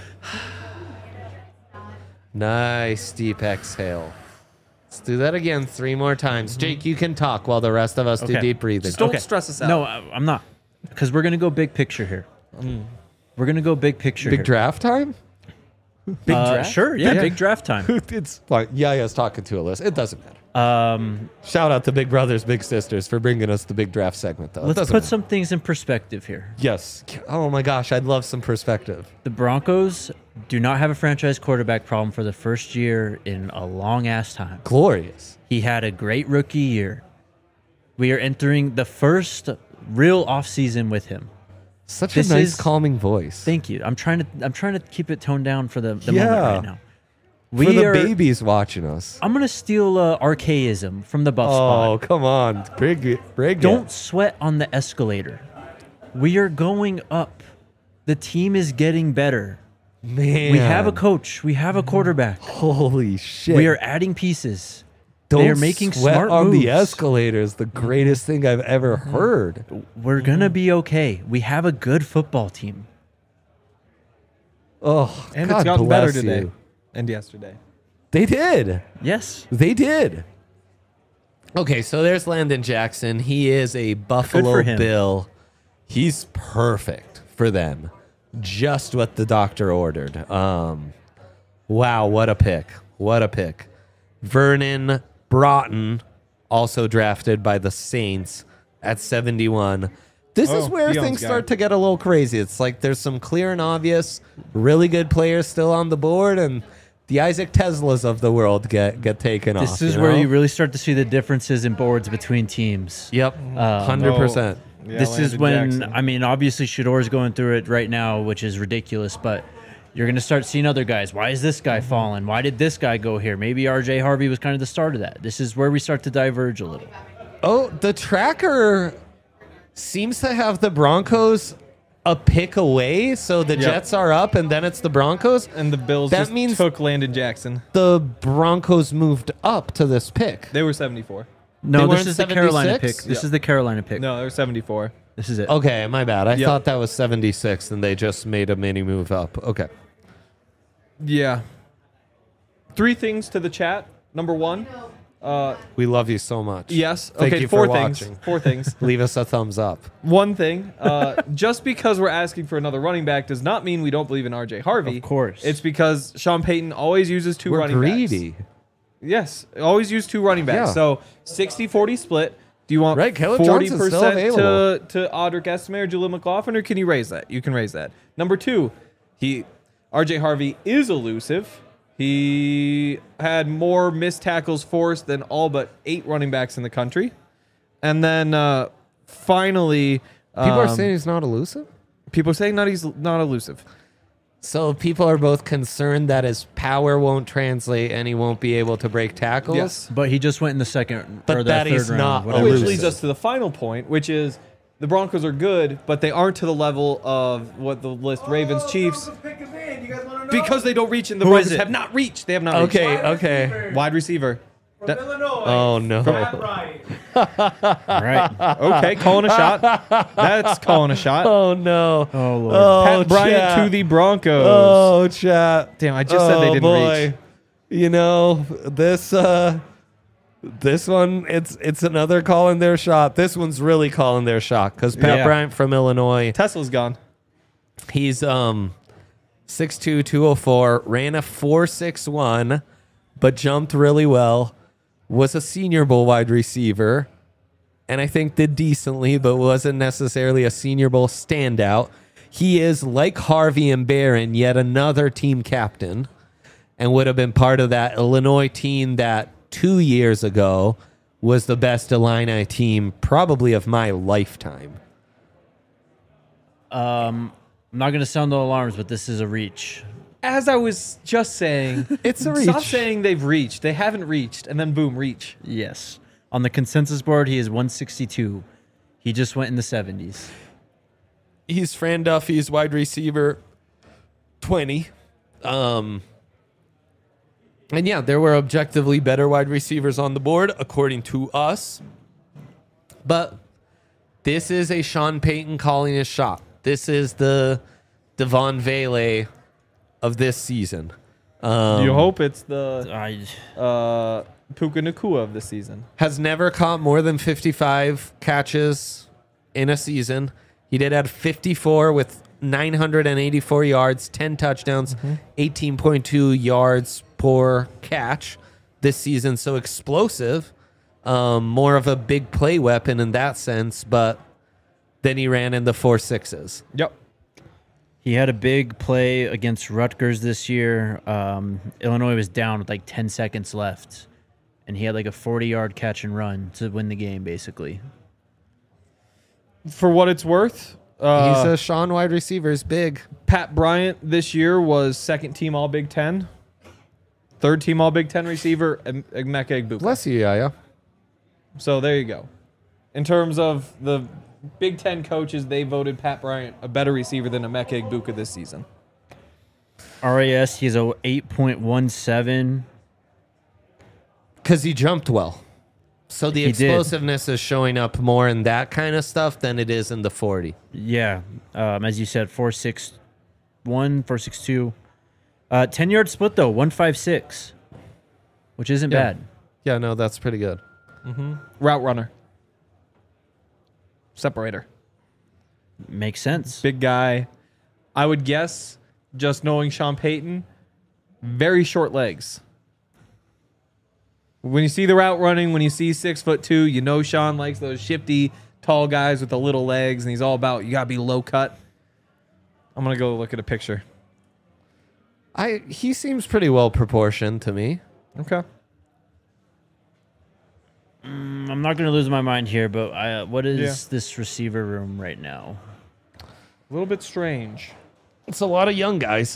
Nice deep exhale. Let's do that again 3 more times. Jake, you can talk while the rest of us do Okay. deep breathing. Just don't stress us out. No, I'm not, because we're gonna go big picture here. We're gonna go big picture. Big here. draft time? Big draft? Sure, yeah, Yeah. big draft time. It's like Yaya's talking to Alyssa. It doesn't matter. Um, Shout out to Big Brothers, Big Sisters for bringing us the big draft segment, though. It let's doesn't put matter. some things in perspective here. Yes. Oh my gosh, I'd love some perspective. The Broncos do not have a franchise quarterback problem for the first year in a long ass time. Glorious. He had a great rookie year. We are entering the first real offseason with him. Such This a nice, is- calming voice. Thank you. I'm trying to keep it toned down for the Yeah. moment right now. For the babies watching us. I'm gonna steal archaism from the Buff Oh, spot. come on. Bring it. Don't sweat on the escalator. We are going up. The team is getting better. Man. We have a coach. We have a quarterback. Holy shit. We are adding pieces. Don't they are making sweat smart on moves. the escalator is the greatest thing I've ever heard. We're gonna be okay. We have a good football team. Oh, And God it's gotten better bless today you. and yesterday. They did. Yes. They did. Okay, so there's Landon Jackson. He is a Buffalo for him. Bill. He's perfect for them. Just what the doctor ordered. Wow, what a pick. What a pick. Vernon Broughton, also drafted by the Saints at 71. This is Oh, where Dion's things guy. start to get a little crazy. It's like there's some clear and obvious, really good players still on the board, and the Isaac Teslas of the world get taken off. This is where you really start to see the differences in boards between teams. Yep, 100%. Yeah, This is Landon when, Jackson. I mean, obviously Shador's going through it right now, which is ridiculous, but you're going to start seeing other guys. Why is this guy falling? Why did this guy go here? Maybe RJ Harvey was kind of the start of that. This is where we start to diverge a little. Oh, the tracker seems to have the Broncos a pick away, so the Jets are up, and then it's the Broncos. And the Bills That just means- took Landon Jackson. The Broncos moved up to this pick. They were 74. No, weren't this is the Carolina 76? pick. This Yeah. is the Carolina pick. No, they were 74. This is it. Okay, my bad. I Yep. thought that was 76, and they just made a mini move up. Okay. Yeah. 3 things to the chat. Number 1. We love you so much. Yes. Thank okay, you 4 for things. watching. 4 things. Leave us a thumbs up. One thing, just because we're asking for another running back does not mean we don't believe in RJ Harvey. Of course. It's because Sean Payton always uses 2 We're running greedy. backs. Yes, always use 2 running backs. Yeah. So 60-40 split. Do you want Right, Caleb Johnson's still 40% available. to Audric Estime or Jaleel McLaughlin, or can you raise that? You can raise that. Number 2, RJ Harvey is elusive. He had more missed tackles forced than all but 8 running backs in the country. And then finally, People are saying he's not elusive? people are saying he's not elusive. So people are both concerned that his power won't translate and he won't be able to break tackles? Yes. But he just went in the second But or the that third is round. not whatever. Which elusive. leads us to the final point, which is the Broncos are good, but they aren't to the level of what the list Ravens, Chiefs, because they don't reach and the Who is Broncos it? have not reached. They have not reached. Okay. Wide receiver. Illinois. Oh, no. Matt Bryant. Right. Okay, calling a shot. That's calling a shot. Oh, no. Oh, Lord. Oh, Pat Bryant chat. to the Broncos. Oh, chat. Damn, I just said they didn't reach. You know, this one, it's another calling their shot. This one's really calling their shot because Pat Yeah. Bryant from Illinois, Tesla's gone. he's 6'2", 204, ran a 4.61, but jumped really well, was a Senior Bowl wide receiver, and I think did decently, but wasn't necessarily a Senior Bowl standout. He is, like Harvey and Barron, yet another team captain, and would have been part of that Illinois team that 2 years ago was the best Illini team probably of my lifetime. I'm not going to sound the alarms, but this is a reach. As I was just saying, It's a Stop reach. saying they've reached. They haven't reached, and then boom, reach. Yes. On the consensus board, he is 162. He just went in the 70s. He's Fran Duffy's wide receiver 20. And yeah, there were objectively better wide receivers on the board, according to us. But this is a Sean Payton calling his shot. This is the Devon Vele of this season. You hope it's the Puka Nacua of the season. Has never caught more than 55 catches in a season. He did have 54 with 984 yards, 10 touchdowns, 18.2 yards per catch this season. So explosive, more of a big play weapon in that sense, but then he ran in the 4.6s. Yep. He had a big play against Rutgers this year. Illinois was down with like 10 seconds left, and he had like a 40-yard catch and run to win the game, basically. For what it's worth, He's a Sean wide receiver, is big. Pat Bryant this year was second team All Big Ten, third team All Big Ten receiver, Emeka Egbuka. Bless you, Yaya. So there you go. In terms of the Big Ten coaches, they voted Pat Bryant a better receiver than Emeka Egbuka this season. RAS, he's a 8.17. Because he jumped well. So the He did. explosiveness is showing up more in that kind of stuff than it is in the 40. Yeah, as you said, 4.61, 4.62. 10-yard split, though, 1.56, which isn't Yeah. bad. Yeah, no, that's pretty good. Route runner. Separator. Makes sense. Big guy. I would guess, just knowing Sean Payton, very short legs. When you see the route running, when you see 6'2", you know Sean likes those shifty, tall guys with the little legs, and he's all about, you got to be low cut. I'm going to go look at a picture. He seems pretty well proportioned to me. Okay. I'm not going to lose my mind here, but what is this receiver room right now? A little bit strange. It's a lot of young guys.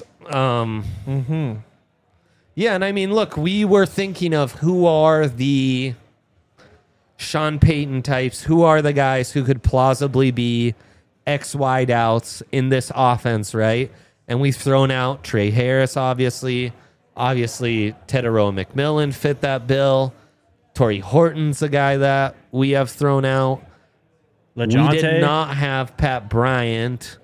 Yeah, and I mean, look, we were thinking of who are the Sean Payton types, who are the guys who could plausibly be X wide outs in this offense, right? And we've thrown out Trey Harris, obviously. Obviously, Teteroa McMillan fit that bill. Torrey Horton's a guy that we have thrown out. LeJontay? We did not have Pat Bryant.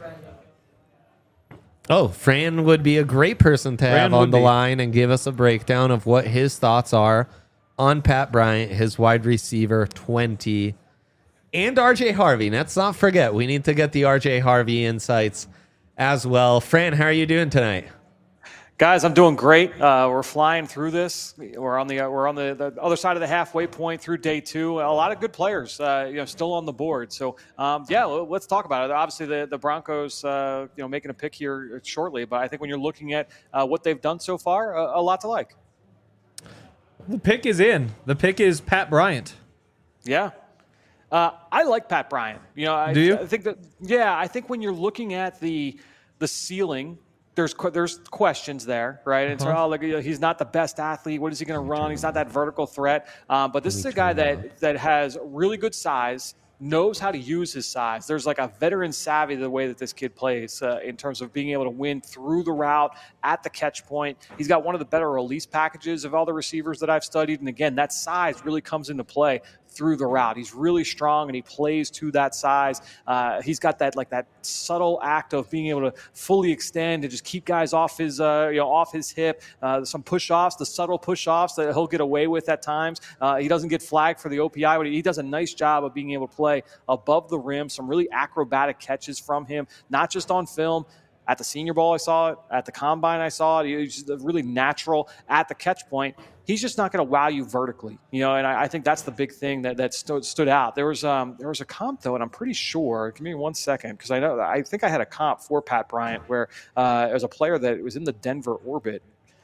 Oh, Fran would be a great person to have on the line and give us a breakdown of what his thoughts are on Pat Bryant, his wide receiver 20, and RJ Harvey. Let's not forget, we need to get the RJ Harvey insights as well. Fran, how are you doing tonight? Guys, I'm doing great. We're flying through this. We're on the other side of the halfway point through day two. A lot of good players, still on the board. So, let's talk about it. Obviously, the Broncos, making a pick here shortly. But I think when you're looking at what they've done so far, a lot to like. The pick is in. The pick is Pat Bryant. Yeah. I like Pat Bryant. Do you? I think that. Yeah, I think when you're looking at the ceiling. There's questions there, right? And so, he's not the best athlete. What is he going to run? He's not that vertical threat. But this is a guy that has really good size, knows how to use his size. There's like a veteran savvy the way that this kid plays in terms of being able to win through the route at the catch point. He's got one of the better release packages of all the receivers that I've studied. And again, that size really comes into play. through the route. He's really strong and he plays to that size. He's got that subtle act of being able to fully extend and just keep guys off his off his hip. Some push-offs, the subtle push-offs that he'll get away with at times. He doesn't get flagged for the OPI, but he does a nice job of being able to play above the rim. Some really acrobatic catches from him, not just on film. At the Senior Bowl, I saw it. At the Combine, I saw it. He was just really natural at the catch point. He's just not going to wow you vertically, and I think that's the big thing that stood out. There was a comp though, and I'm pretty sure. Give me 1 second, because I think I had a comp for Pat Bryant where it was a player that was in the Denver orbit.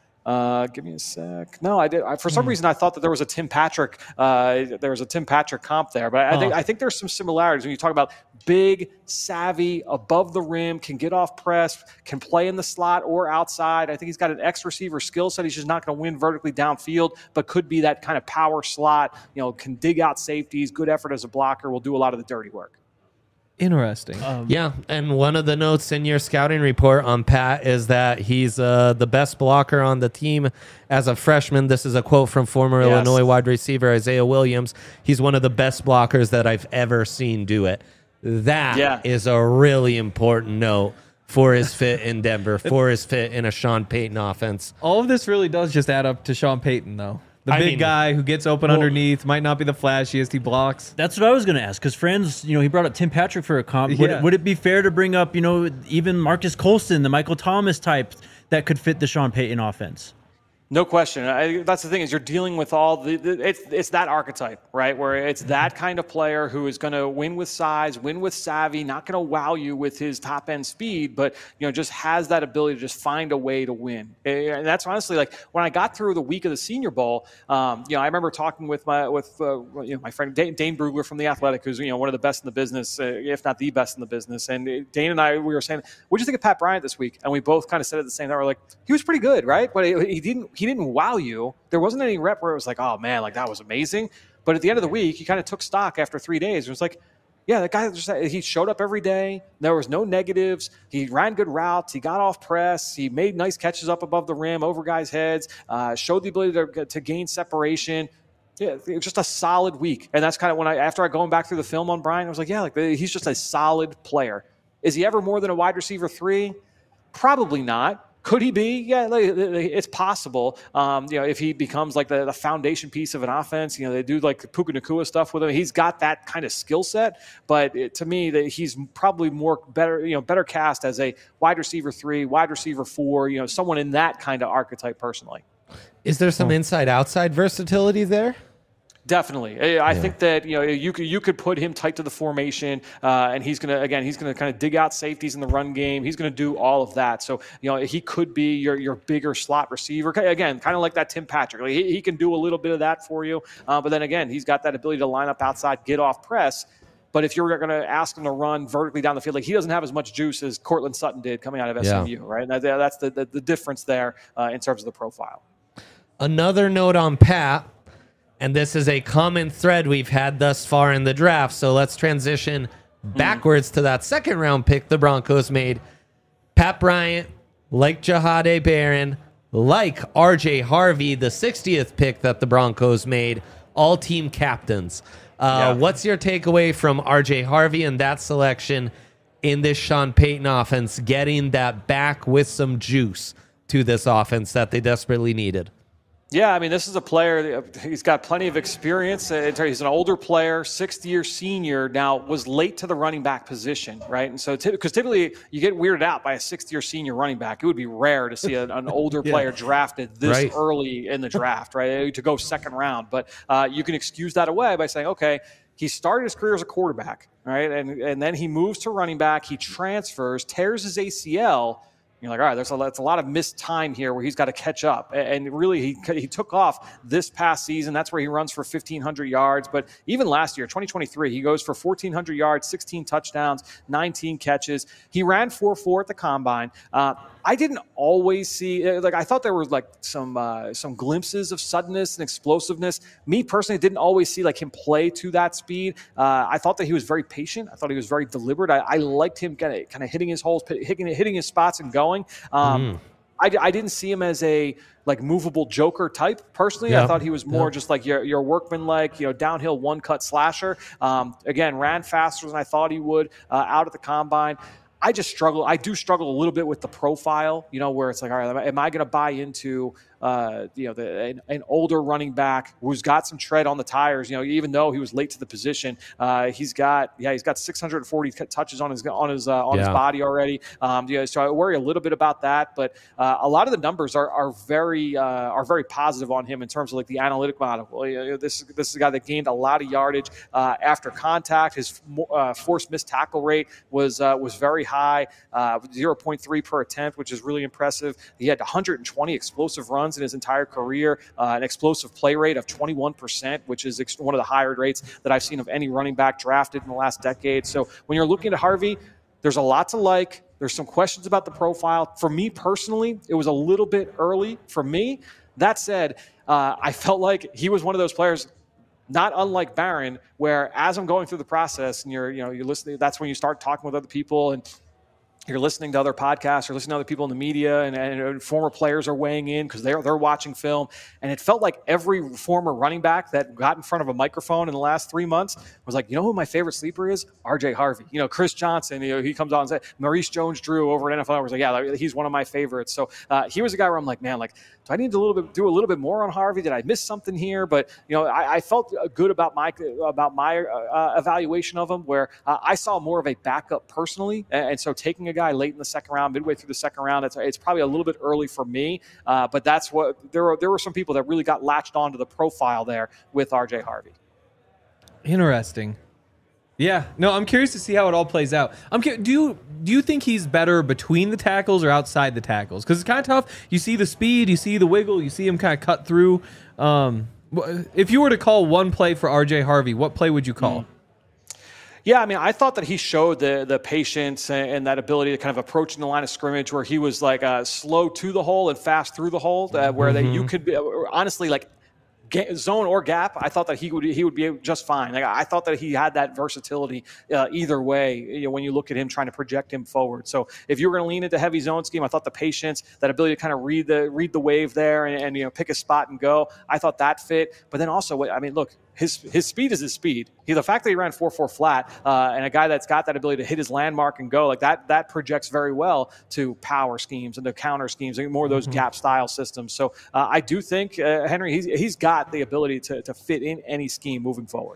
Give me a sec. No, I did. For some reason, I thought that there was a Tim Patrick. There was a Tim Patrick comp there, but I think there's some similarities when you talk about big, savvy, above the rim, can get off press, can play in the slot or outside. I think he's got an X receiver skill set. He's just not going to win vertically downfield, but could be that kind of power slot. Can dig out safeties. Good effort as a blocker. Will do a lot of the dirty work. Interesting. Yeah, and one of the notes in your scouting report on Pat is that he's the best blocker on the team as a freshman. This is a quote from former Illinois wide receiver Isaiah Williams. He's one of the best blockers that I've ever seen do it. That is a really important note for his fit in Denver, for his fit in a Sean Payton offense. All of this really does just add up to Sean Payton, though. The big guy who gets open underneath, might not be the flashiest, he blocks. That's what I was going to ask, because Friends, he brought up Tim Patrick for a comp. Would it be fair to bring up, even Marcus Colston, the Michael Thomas type that could fit the Sean Payton offense? No question. That's the thing, is you're dealing with all it's that archetype, right? Where it's that kind of player who is going to win with size, win with savvy, not going to wow you with his top end speed, but just has that ability to just find a way to win. And that's honestly, like, when I got through the week of the Senior Bowl, I remember talking with my friend Dane Brugler from The Athletic, who's one of the best in the business, if not the best in the business. And Dane and I, we were saying, "What do you think of Pat Bryant this week?" And we both kind of said at the same time, we're like, he was pretty good, right? But he didn't wow you. There wasn't any rep where it was like, oh man, like that was amazing. But at the end of the week, he kind of took stock after 3 days. It was like, yeah, that guy he showed up every day. There was no negatives. He ran good routes. He got off press. He made nice catches up above the rim, over guys' heads. Showed the ability to gain separation. Yeah, it was just a solid week. And that's kind of when after going back through the film on Brian, I was like, yeah, like he's just a solid player. Is he ever more than a wide receiver 3? Probably not. Could he be? Yeah, it's possible. If he becomes like the foundation piece of an offense, they do like Puka Nacua stuff with him. He's got that kind of skill set, but to me, that he's probably better cast as a wide receiver 3, wide receiver 4. Someone in that kind of archetype. Personally, is there some inside-outside versatility there? Definitely. I think that you could put him tight to the formation, and he's gonna kind of dig out safeties in the run game. He's gonna do all of that. So he could be your bigger slot receiver. Again, kind of like that Tim Patrick. Like he can do a little bit of that for you, but then again, he's got that ability to line up outside, get off press. But if you're going to ask him to run vertically down the field, like he doesn't have as much juice as Cortland Sutton did coming out of SMU, right? And that's the difference there in terms of the profile. Another note on Pat. And this is a common thread we've had thus far in the draft. So let's transition backwards to that second round pick the Broncos made. Pat Bryant, like Jahadae Barron, like RJ Harvey, the 60th pick that the Broncos made, all team captains. What's your takeaway from RJ Harvey and that selection in this Sean Payton offense, getting that back with some juice to this offense that they desperately needed? Yeah, I mean, this is a player, he's got plenty of experience. He's an older player, sixth-year senior, now was late to the running back position, right? And so, because typically you get weirded out by a sixth-year senior running back. It would be rare to see an older player drafted this early in the draft, right, to go second round. But you can excuse that away by saying, okay, he started his career as a quarterback, right? And then he moves to running back. He transfers, tears his ACL. You're like, all right, there's a lot of missed time here where he's got to catch up. And really, he took off this past season. That's where he runs for 1,500 yards. But even last year, 2023, he goes for 1,400 yards, 16 touchdowns, 19 catches. He ran 4.4 at the Combine. I didn't always see, I thought there were some glimpses of suddenness and explosiveness. Me personally didn't always see him play to that speed. I thought that he was very patient. I thought he was very deliberate. I liked him kind of hitting his holes, hitting his spots and going. I didn't see him as a like movable joker type personally. I thought he was more just like your workman-like, downhill one-cut slasher. Again, ran faster than I thought he would out at the combine. I do struggle a little bit with the profile, where it's like, all right, am I going to buy into, an older running back who's got some tread on the tires, even though he was late to the position, he's got 640 touches on his body already. So I worry a little bit about that, but a lot of the numbers are very positive on him in terms of like the analytic model. Well, this is a guy that gained a lot of yardage after contact. His forced missed tackle rate was very high, 0.3 per attempt, which is really impressive. He had 120 explosive runs in his entire career, an explosive play rate of 21%, which is one of the higher rates that I've seen of any running back drafted in the last decade. So when you're looking at Harvey, there's a lot to like. There's some questions about the profile. For me personally, it was a little bit early for me. That said, I felt like he was one of those players, not unlike Barron, where as I'm going through the process and you're listening, that's when you start talking with other people and you're listening to other podcasts or listening to other people in the media and former players are weighing in because they're watching film. And it felt like every former running back that got in front of a microphone in the last 3 months was like, who my favorite sleeper is? RJ Harvey. Chris Johnson, he comes on and says, Maurice Jones-Drew over at NFL was like, yeah, he's one of my favorites. So he was a guy where I'm like, man, like, do I need to do a little bit more on Harvey? Did I miss something here? But, I felt good about my evaluation of him where I saw more of a backup personally. And so taking a guy late in the second round, midway through the second round, it's probably a little bit early for me. But that's what there were some people that really got latched onto the profile there with RJ Harvey. Interesting. Yeah. No, I'm curious to see how it all plays out. Do you think he's better between the tackles or outside the tackles? Because it's kind of tough. You see the speed, you see the wiggle, you see him kind of cut through. If you were to call one play for RJ Harvey, what play would you call? Yeah, I mean, I thought that he showed the patience and that ability to kind of approaching the line of scrimmage where he was like slow to the hole and fast through the hole, where that you could be honestly like zone or gap. I thought that he would be just fine. Like, I thought that he had that versatility either way. When you look at him trying to project him forward. So if you were going to lean into heavy zone scheme, I thought the patience, that ability to kind of read the wave there and pick a spot and go. I thought that fit. But then also, I mean, look. His speed is his speed. The fact that he ran 4.4 flat and a guy that's got that ability to hit his landmark and go like that projects very well to power schemes and to counter schemes and more of those gap style systems. So I do think Henry he's got the ability to fit in any scheme moving forward.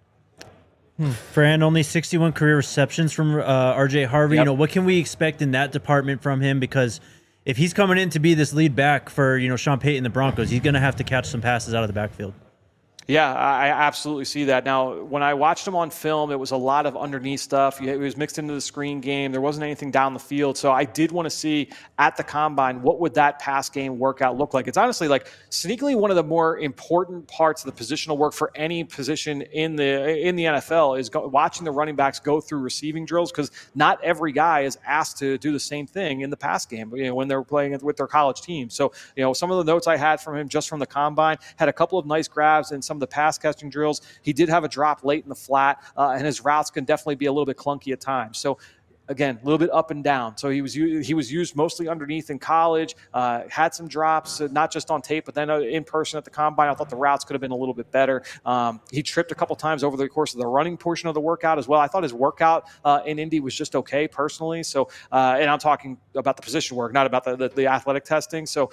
Fran, only 61 career receptions from RJ Harvey. Yep. What can we expect in that department from him? Because if he's coming in to be this lead back for Sean Payton, the Broncos, he's going to have to catch some passes out of the backfield. Yeah, I absolutely see that. Now, when I watched him on film, it was a lot of underneath stuff. It was mixed into the screen game. There wasn't anything down the field. So I did want to see at the combine, what would that pass game workout look like? It's honestly like sneakily one of the more important parts of the positional work for any position in the NFL is watching the running backs go through receiving drills, because not every guy is asked to do the same thing in the pass game when they're playing with their college team. So, some of the notes I had from him just from the combine had a couple of nice grabs and some of the pass catching drills. He did have a drop late in the flat, and his routes can definitely be a little bit clunky at times. So again, a little bit up and down. So he was used mostly underneath in college, had some drops, not just on tape, but then in person at the combine. I thought the routes could have been a little bit better. He tripped a couple times over the course of the running portion of the workout as well. I thought his workout in Indy was just okay personally. So, and I'm talking about the position work, not about the athletic testing. So,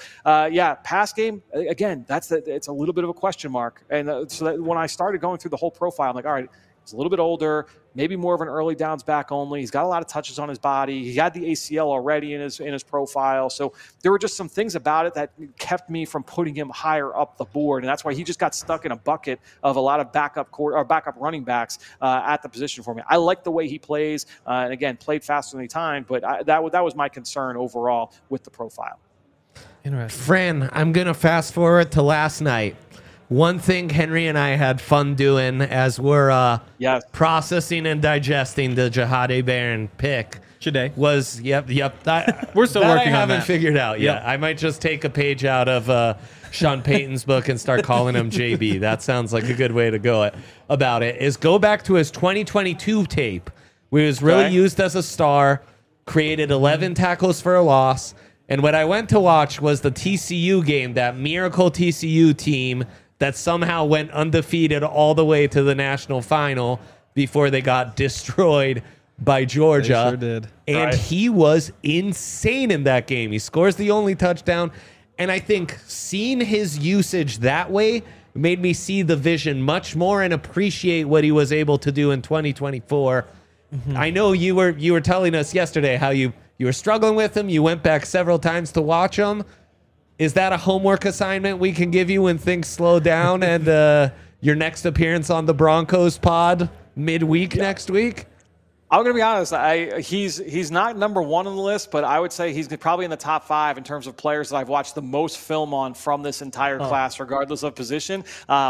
pass game, again, it's a little bit of a question mark. And so that when I started going through the whole profile, I'm like, all right, he's a little bit older, maybe more of an early downs back only. He's got a lot of touches on his body. He had the ACL already in his profile. So there were just some things about it that kept me from putting him higher up the board. And that's why he just got stuck in a bucket of a lot of backup running backs at the position for me. I like the way he plays. And again, played faster than he timed, but that was my concern overall with the profile. Interesting. Fran, I'm going to fast forward to last night. One thing Henry and I had fun doing as we're processing and digesting the Jahadae Barron pick today was, we're still that working on that. I haven't figured out yet. I might just take a page out of Sean Payton's book and start calling him JB. That sounds like a good way to go about it, is go back to his 2022 tape where he was really used as a star, created 11 tackles for a loss, And what I went to watch was the TCU game, that miracle TCU team that somehow went undefeated all the way to the national final before they got destroyed by Georgia. They sure did. And he was insane in that game. He scores the only touchdown. And I think seeing his usage that way made me see the vision much more and appreciate what he was able to do in 2024. I know you were telling us yesterday how you were struggling with him. You went back several times to watch him. Is that a homework assignment we can give you when things slow down and your next appearance on the Broncos pod midweek next week? I'm going to be honest. He's not number one on the list, but I would say he's probably in the top 5 in terms of players that I've watched the most film on from this entire class, regardless of position.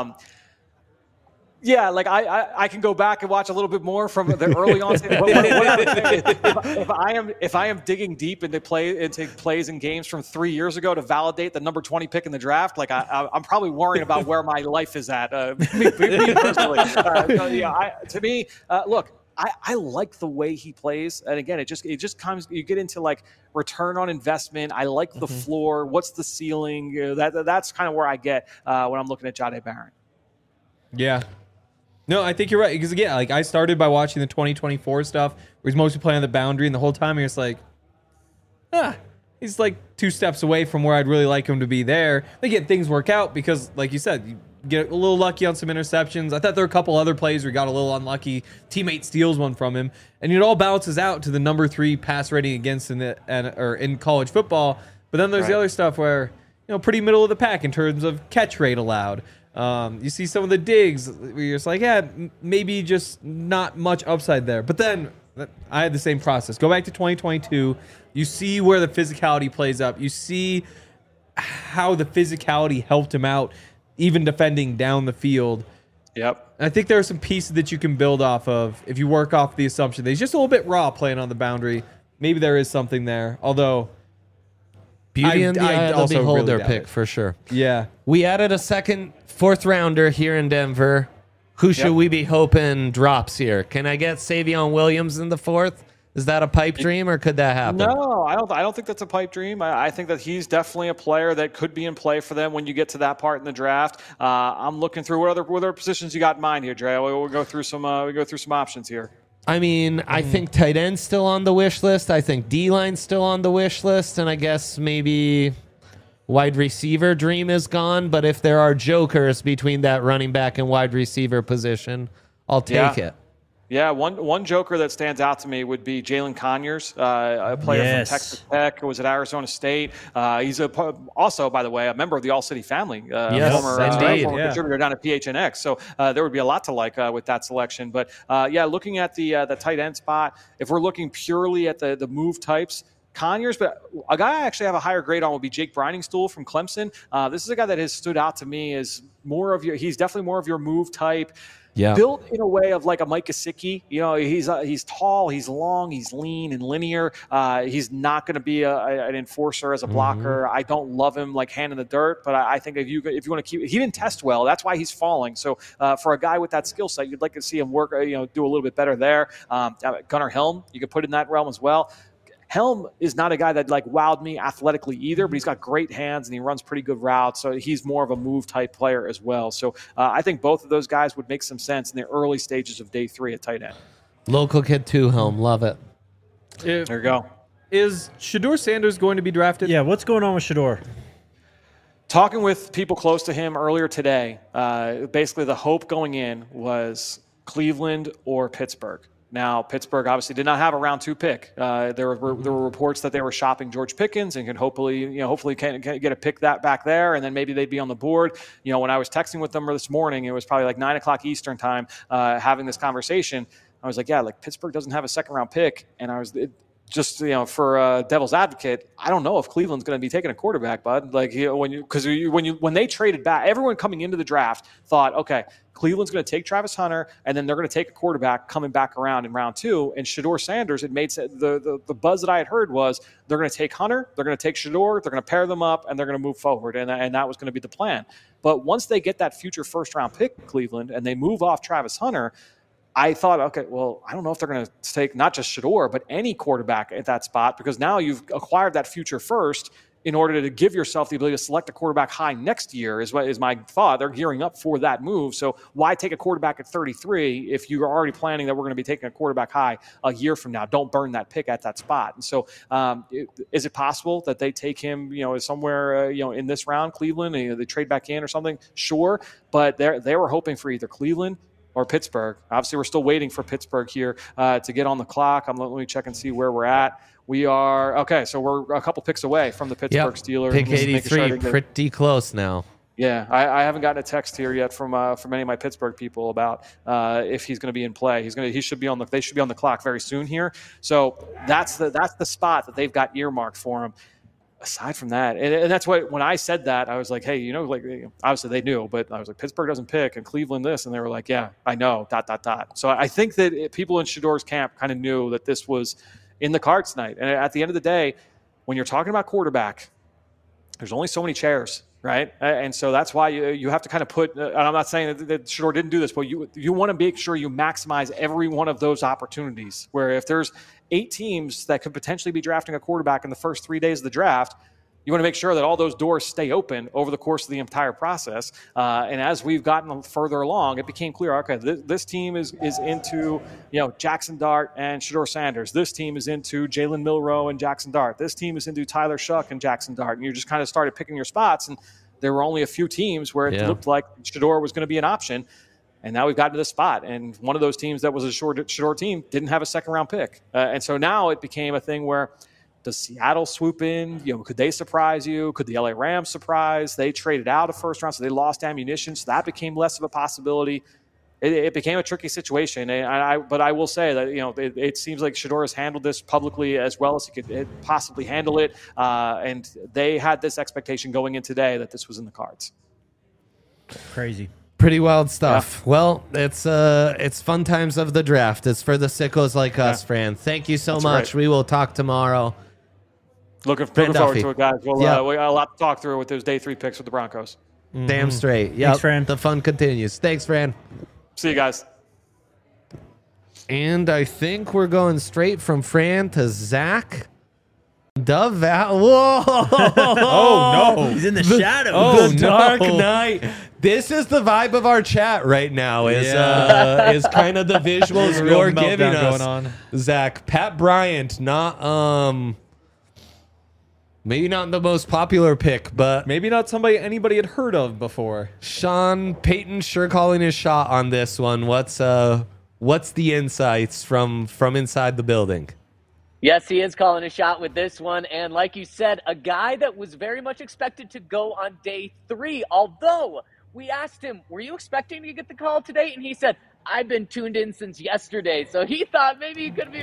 Yeah, like I can go back and watch a little bit more from the early on. If I am digging deep into plays and games from 3 years ago to validate the number 20 pick in the draft, like I'm probably worrying about where my life is at. Me personally, to me, look. I like the way he plays, and again, it just comes. You get into like return on investment. I like the floor. What's the ceiling? That's kind of where I get when I'm looking at Jahdae Barron. Yeah. No, I think you're right. Because again, like I started by watching the 2024 stuff where he's mostly playing on the boundary, and the whole time you're just like, he's like 2 steps away from where I'd really like him to be there. Again, things work out because, like you said, you get a little lucky on some interceptions. I thought there were a couple other plays where he got a little unlucky. Teammate steals one from him, and it all balances out to the number 3 pass rating against in college football. But then there's the other stuff where, pretty middle of the pack in terms of catch rate allowed. You see some of the digs where you're just like, maybe just not much upside there. But then I had the same process. Go back to 2022. You see where the physicality plays up. You see how the physicality helped him out, even defending down the field. Yep. And I think there are some pieces that you can build off of if you work off the assumption that he's just a little bit raw playing on the boundary. Maybe there is something there. Although, beauty in the eye of the beholder really pick for sure. Yeah. We added a second 4th rounder here in Denver. Who should we be hoping drops here? Can I get Savion Williams in the 4th? Is that a pipe dream, or could that happen? No, I don't think that's a pipe dream. I think that he's definitely a player that could be in play for them when you get to that part in the draft. I'm looking through what other positions you got in mind here, Dre. We'll go through some options here. I mean, I think tight end's still on the wish list. I think D-line's still on the wish list, and I guess maybe wide receiver dream is gone. But if there are jokers between that running back and wide receiver position, I'll take it. Yeah, one joker that stands out to me would be Jalen Conyers, a player from Texas Tech who was at Arizona State. He's also, by the way, a member of the All-City family, former contributor down at PHNX. So there would be a lot to like with that selection. But looking at the tight end spot, if we're looking purely at the move types, Conyers, but a guy I actually have a higher grade on would be Jake Briningstool from Clemson. This is a guy that has stood out to me as he's definitely more of your move type. Yeah. Built in a way of like a Mike Gesicki. He's tall, he's long, he's lean and linear. He's not going to be an enforcer as a blocker. I don't love him like hand in the dirt, but I think if you want to he didn't test well. That's why he's falling. So for a guy with that skill set, you'd like to see him work, do a little bit better there. Gunnar Helm, you could put in that realm as well. Helm is not a guy that like wowed me athletically either, but he's got great hands and he runs pretty good routes. So he's more of a move type player as well. So I think both of those guys would make some sense in the early stages of day 3 at tight end. Local kid too, Helm. Love it. There you go. Is Shedeur Sanders going to be drafted? Yeah, what's going on with Shedeur? Talking with people close to him earlier today, basically the hope going in was Cleveland or Pittsburgh. Now, Pittsburgh obviously did not have a round 2 pick. There were reports that they were shopping George Pickens and can hopefully can get a pick that back there, and then maybe they'd be on the board. When I was texting with them this morning, it was probably like 9 o'clock Eastern time, having this conversation. I was like, Pittsburgh doesn't have a second round pick, and I was for devil's advocate, I don't know if Cleveland's going to be taking a quarterback, bud. Like when they traded back, everyone coming into the draft thought, okay, Cleveland's going to take Travis Hunter, and then they're going to take a quarterback coming back around in round 2. And Shedeur Sanders, it made the buzz that I had heard was they're going to take Hunter, they're going to take Shedeur, they're going to pair them up, and they're going to move forward. And that was going to be the plan. But once they get that future first round pick, Cleveland, and they move off Travis Hunter, I thought, okay, well, I don't know if they're going to take not just Shedeur, but any quarterback at that spot, because now you've acquired that future first in order to give yourself the ability to select a quarterback high next year is my thought. They're gearing up for that move. So why take a quarterback at 33 if you're already planning that we're going to be taking a quarterback high a year from now? Don't burn that pick at that spot. And so is it possible that they take him, somewhere, in this round, Cleveland, they trade back in or something? Sure. But they were hoping for either Cleveland or Pittsburgh. Obviously, we're still waiting for Pittsburgh here to get on the clock. Let me check and see where we're at. We are okay. So we're a couple picks away from the Pittsburgh Steelers. Pick 83, pretty close now. Yeah, I haven't gotten a text here yet from any of my Pittsburgh people about if he's going to be in play. They should be on the clock very soon here. So that's the spot that they've got earmarked for him. Aside from that, and that's what, when I said that, I was like, hey, obviously they knew, but I was like, Pittsburgh doesn't pick and Cleveland this, and they were like, yeah, I know, ... So I think that people in Shedeur's camp kind of knew that this was in the cards tonight. And at the end of the day, when you're talking about quarterback, there's only so many chairs, right? And so that's why you have to kind of put, and I'm not saying that Shedeur didn't do this, but you want to make sure you maximize every one of those opportunities, where if there's 8 teams that could potentially be drafting a quarterback in the first 3 days of the draft, you want to make sure that all those doors stay open over the course of the entire process. And as we've gotten further along, it became clear, okay, this team is into Jackson Dart and Shedeur Sanders. This team is into Jalen Milroe and Jackson Dart. This team is into Tyler Shuck and Jackson Dart. And you just kind of started picking your spots. And there were only a few teams where it looked like Shedeur was going to be an option. And now we've gotten to this spot. And one of those teams that was a Shedeur team didn't have a second-round pick. And so now it became a thing where, does Seattle swoop in? Could they surprise you? Could the LA Rams surprise? They traded out a first round, so they lost ammunition. So that became less of a possibility. It became a tricky situation. But I will say that it seems like Shedeur has handled this publicly as well as he could possibly handle it. And they had this expectation going in today that this was in the cards. Crazy. Pretty wild stuff. Yeah. Well, it's fun times of the draft. It's for the sickos like us, Fran. Thank you so much. Right. We will talk tomorrow. Looking forward to it, guys. Well, we got a lot to talk through with those day 3 picks with the Broncos. Mm-hmm. Damn straight. Yeah, Thanks, Fran. The fun continues. Thanks, Fran. See you guys. And I think we're going straight from Fran to Zach. Whoa! Oh no! He's in the shadows. The Dark Knight. This is the vibe of our chat right now. Is kind of the visuals you're giving us. Going on. Zach, Pat Bryant, maybe not the most popular pick, but maybe not somebody anybody had heard of before. Sean Payton sure calling his shot on this one. What's the insights from inside the building? Yes, he is calling a shot with this one. And like you said, a guy that was very much expected to go on day 3. Although we asked him, were you expecting to get the call today? And he said, I've been tuned in since yesterday. So he thought maybe he could be.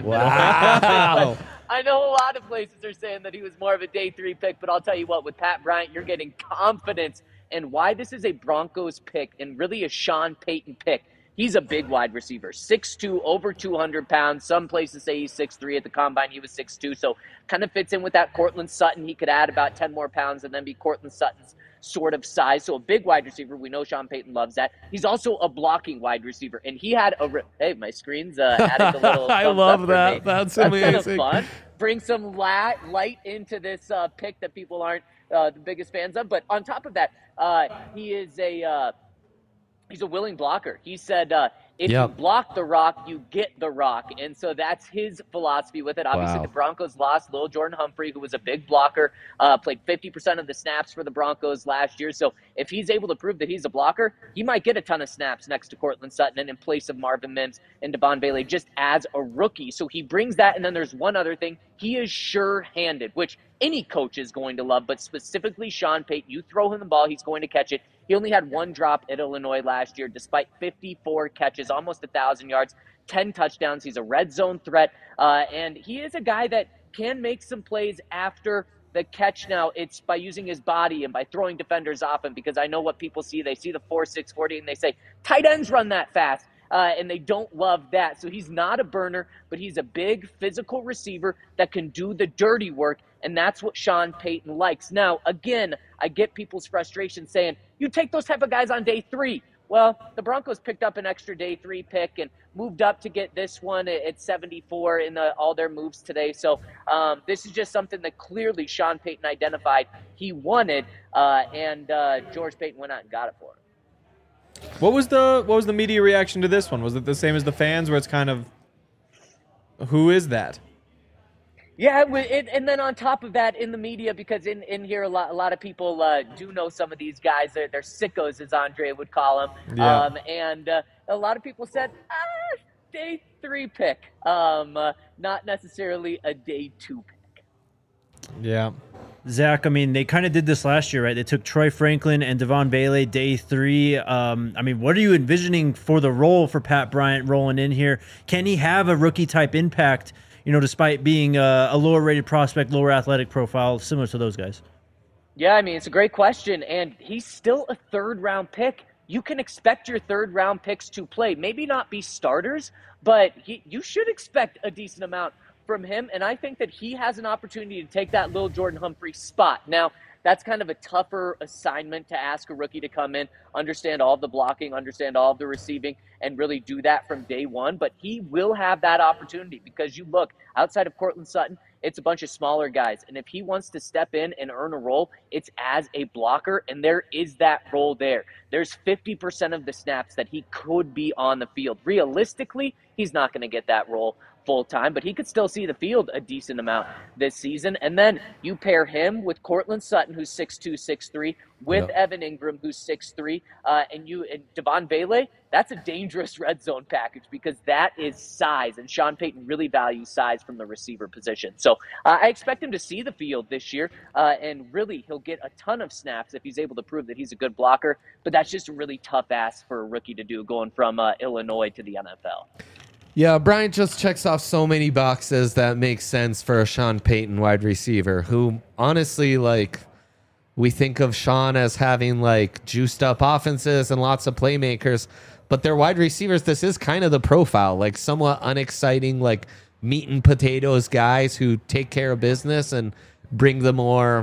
Wow. I know a lot of places are saying that he was more of a day 3 pick. But I'll tell you what, with Pat Bryant, you're getting confidence. And why this is a Broncos pick and really a Sean Payton pick. He's a big wide receiver, 6'2", over 200 pounds. Some places say he's 6'3". At the Combine, he was 6'2", so kind of fits in with that Courtland Sutton. He could add about 10 more pounds and then be Courtland Sutton's sort of size. So a big wide receiver. We know Sean Payton loves that. He's also a blocking wide receiver, and he had hey, my screen's adding a little. I love that. That's amazing. Kind of fun. Bring some light into this pick that people aren't the biggest fans of. But on top of that, he is he's a willing blocker. He said, if you block the rock, you get the rock. And so that's his philosophy with it. Obviously, the Broncos lost Lil Jordan Humphrey, who was a big blocker, played 50% of the snaps for the Broncos last year. So if he's able to prove that he's a blocker, he might get a ton of snaps next to Courtland Sutton and in place of Marvin Mims and Devon Bailey just as a rookie. So he brings that. And then there's one other thing. He is sure-handed, which any coach is going to love, but specifically Sean Payton. You throw him the ball, he's going to catch it. He only had 1 drop at Illinois last year, despite 54 catches, almost 1,000 yards, 10 touchdowns. He's a red zone threat, and he is a guy that can make some plays after the catch. Now, it's by using his body and by throwing defenders off him, because I know what people see. They see the 4.6 40, and they say, tight ends run that fast. And they don't love that. So he's not a burner, but he's a big physical receiver that can do the dirty work, and that's what Sean Payton likes. Now, again, I get people's frustration saying, you take those type of guys on day 3. Well, the Broncos picked up an extra day 3 pick and moved up to get this one at 74 in all their moves today. So this is just something that clearly Sean Payton identified he wanted, and George Payton went out and got it for him. What was the media reaction to this one? Was it the same as the fans, where it's kind of, who is that? Yeah, and then on top of that, in the media, because in here a lot of people do know some of these guys. They're sickos, as Andre would call them. Yeah. And a lot of people said, day 3 pick, not necessarily a day 2 pick. Yeah. Zach, I mean, they kind of did this last year, right? They took Troy Franklin and Devon Bailey day 3. I mean, what are you envisioning for the role for Pat Bryant rolling in here? Can he have a rookie-type impact, despite being a lower-rated prospect, lower athletic profile, similar to those guys? Yeah, I mean, it's a great question, and he's still a third-round pick. You can expect your third-round picks to play. Maybe not be starters, but you should expect a decent amount from him, and I think that he has an opportunity to take that Lil Jordan Humphrey spot. Now, that's kind of a tougher assignment to ask a rookie to come in, understand all of the blocking, understand all of the receiving, and really do that from day one. But he will have that opportunity because you look, outside of Courtland Sutton, it's a bunch of smaller guys. And if he wants to step in and earn a role, it's as a blocker, and there is that role there. There's 50% of the snaps that he could be on the field. Realistically, he's not going to get that role full time, but he could still see the field a decent amount this season. And then you pair him with Courtland Sutton, who's 6'2", 6'3", with Evan Ingram, who's 6'3", and Devon Bailey. That's a dangerous red zone package because that is size, and Sean Payton really values size from the receiver position. So I expect him to see the field this year, and really he'll get a ton of snaps if he's able to prove that he's a good blocker. But that's just a really tough ask for a rookie to do, going from Illinois to the NFL. Yeah, Bryant just checks off so many boxes that makes sense for a Sean Payton wide receiver who, honestly, we think of Sean as having, juiced up offenses and lots of playmakers, but they're wide receivers. This is kind of the profile, somewhat unexciting, meat and potatoes guys who take care of business and bring the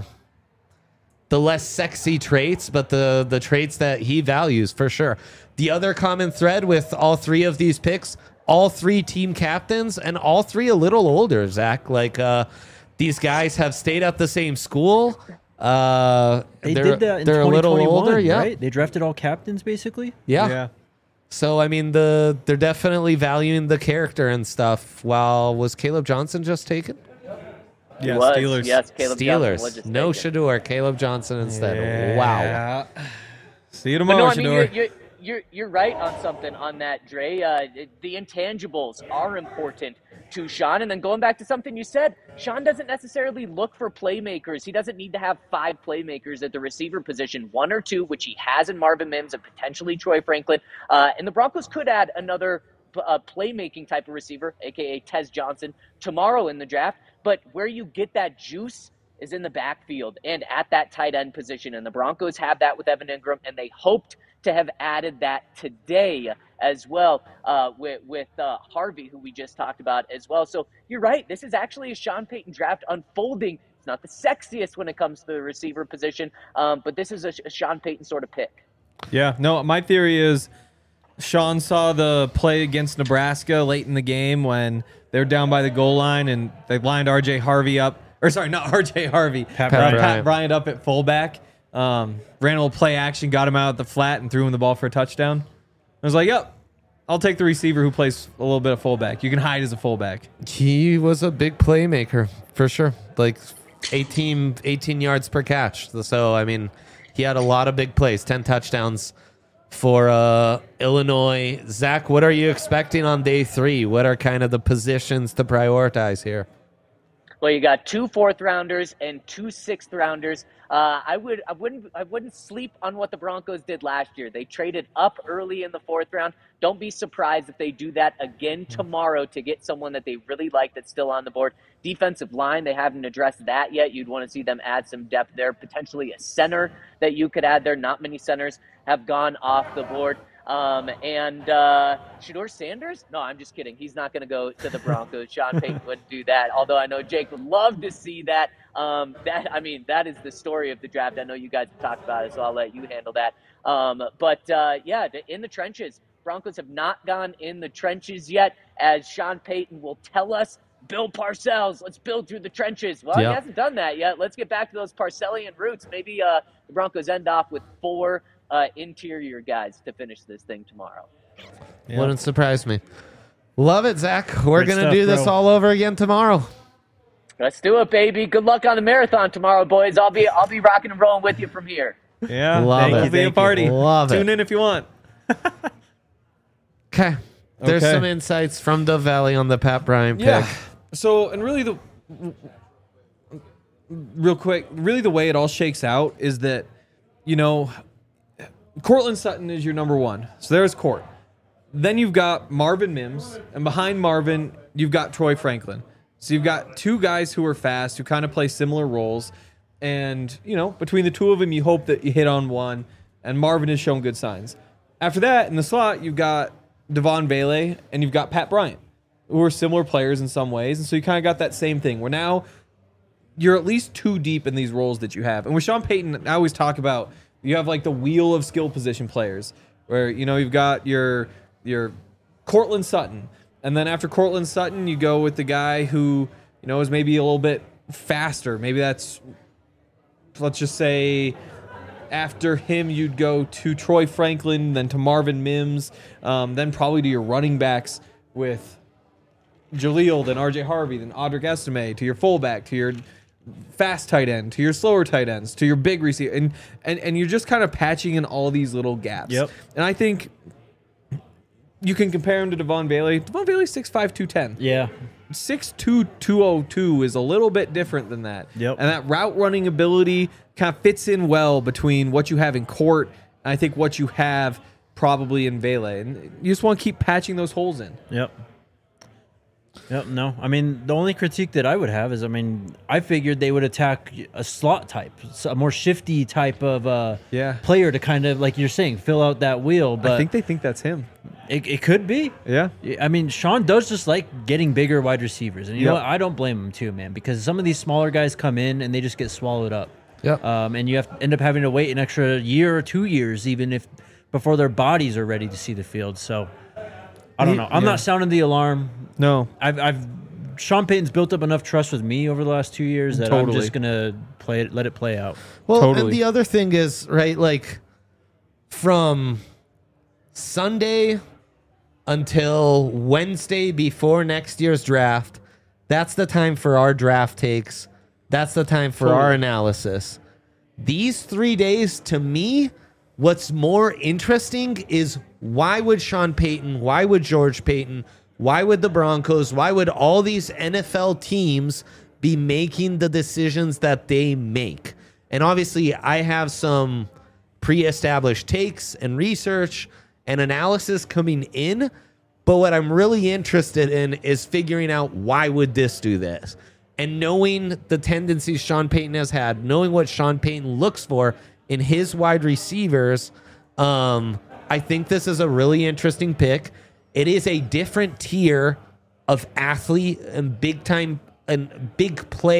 less sexy traits, but the traits that he values for sure. The other common thread with all 3 of these picks, all 3 team captains, and all 3 a little older, Zach. These guys have stayed at the same school. They did that in 2021, a little older, yeah. Right? They drafted all captains, basically? Yeah. So, I mean, they're definitely valuing the character and stuff. Was Caleb Johnson just taken? Yeah, Steelers. Yes, Caleb Steelers. Johnson was just No taken. Shador, Caleb Johnson instead. Wow. See you tomorrow, Shador. You're right on something on that, Dre. The intangibles are important to Sean. And then going back to something you said, Sean doesn't necessarily look for playmakers. He doesn't need to have 5 playmakers at the receiver position, 1 or 2, which he has in Marvin Mims and potentially Troy Franklin. And the Broncos could add another playmaking type of receiver, a.k.a. Tez Johnson, tomorrow in the draft. But where you get that juice is in the backfield and at that tight end position. And the Broncos have that with Evan Ingram, and they hoped to have added that today as well with Harvey, who we just talked about as well. So you're right. This is actually a Sean Payton draft unfolding. It's not the sexiest when it comes to the receiver position, but this is a Sean Payton sort of pick. Yeah, no, my theory is Sean saw the play against Nebraska late in the game when they were down by the goal line and they lined R.J. Harvey up. Or sorry, not R.J. Harvey. Pat Bryant up at fullback. Ran a little play action, got him out at the flat, and threw him the ball for a touchdown. I was like, yep, I'll take the receiver who plays a little bit of fullback. You can hide as a fullback. He was a big playmaker, for sure. 18 yards per catch. So, I mean, he had a lot of big plays, 10 touchdowns for Illinois. Zach, what are you expecting on day 3? What are kind of the positions to prioritize here? Well, you got 2 4th-rounders and 2 6th-rounders. I wouldn't sleep on what the Broncos did last year. They traded up early in the 4th round. Don't be surprised if they do that again tomorrow to get someone that they really like that's still on the board. Defensive line, they haven't addressed that yet. You'd want to see them add some depth there. Potentially a center that you could add there. Not many centers have gone off the board. And Shedeur Sanders? No, I'm just kidding. He's not going to go to the Broncos. Sean Payton wouldn't do that, although I know Jake would love to see that. That is the story of the draft. I know you guys have talked about it, so I'll let you handle that. In the trenches. Broncos have not gone in the trenches yet, as Sean Payton will tell us. Bill Parcells, let's build through the trenches. Well, He hasn't done that yet. Let's get back to those Parcellian roots. Maybe the Broncos end off with 4 interior guys to finish this thing tomorrow. Yep. Wouldn't surprise me. Love it, Zach. We're going to do this bro. all over again tomorrow. Let's do it, baby. Good luck on the marathon tomorrow, boys. I'll be rocking and rolling with you from here. Yeah, Love it. It'll be a party. Love it. Tune in if you want. Okay. There's some insights from the Valley on the Pat Bryant pick. So, and really real quick, the way it all shakes out is that, Cortland Sutton is your number 1. So there's Court. Then you've got Marvin Mims, and behind Marvin, you've got Troy Franklin. So you've got 2 guys who are fast, who kind of play similar roles. And, between the 2 of them, you hope that you hit on one, and Marvin has shown good signs. After that, in the slot, you've got Devon Vele, and you've got Pat Bryant, who are similar players in some ways. And so you kind of got that same thing, where now you're at least 2 deep in these roles that you have. And with Sean Payton, I always talk about, you have like the wheel of skill position players, where, you've got your Cortland Sutton. And then after Cortland Sutton, you go with the guy who, is maybe a little bit faster. Maybe that's, let's just say, after him, you'd go to Troy Franklin, then to Marvin Mims, then probably to your running backs with Jaleel, then RJ Harvey, then Audric Estime, to your fullback, to your fast tight end, to your slower tight ends, to your big receiver. And you're just kind of patching in all these little gaps. Yep. And I think you can compare him to Devon Vele. Devon Vele 6'5", 210. Yeah. 6'2", 202 is a little bit different than that. Yep. And that route running ability kind of fits in well between what you have in Court and I think what you have probably in Vele. And you just want to keep patching those holes in. Yep. No. I mean, the only critique that I would have is, I figured they would attack a slot type, a more shifty type of player to kind of, like you're saying, fill out that wheel. But I think they think that's him. It could be. Yeah. Sean does just like getting bigger wide receivers. And you know what? I don't blame him too, man, because some of these smaller guys come in and they just get swallowed up. Yep. And you have to end up having to wait an extra year or 2 years before their bodies are ready to see the field. So I don't know. I'm not sounding the alarm. No. Sean Payton's built up enough trust with me over the last 2 years that I'm just gonna let it play out. Well, and the other thing is, right, like from Sunday until Wednesday before next year's draft, that's the time for our draft takes. That's the time for our analysis. These 3 days, to me, what's more interesting is, why would Sean Payton, why would George Payton, why would the Broncos, why would all these NFL teams be making the decisions that they make? And obviously, I have some pre-established takes and research and analysis coming in, but what I'm really interested in is figuring out, why would this do this? And knowing the tendencies Sean Payton has had, knowing what Sean Payton looks for in his wide receivers, I think this is a really interesting pick. It is a different tier of athlete and big time and big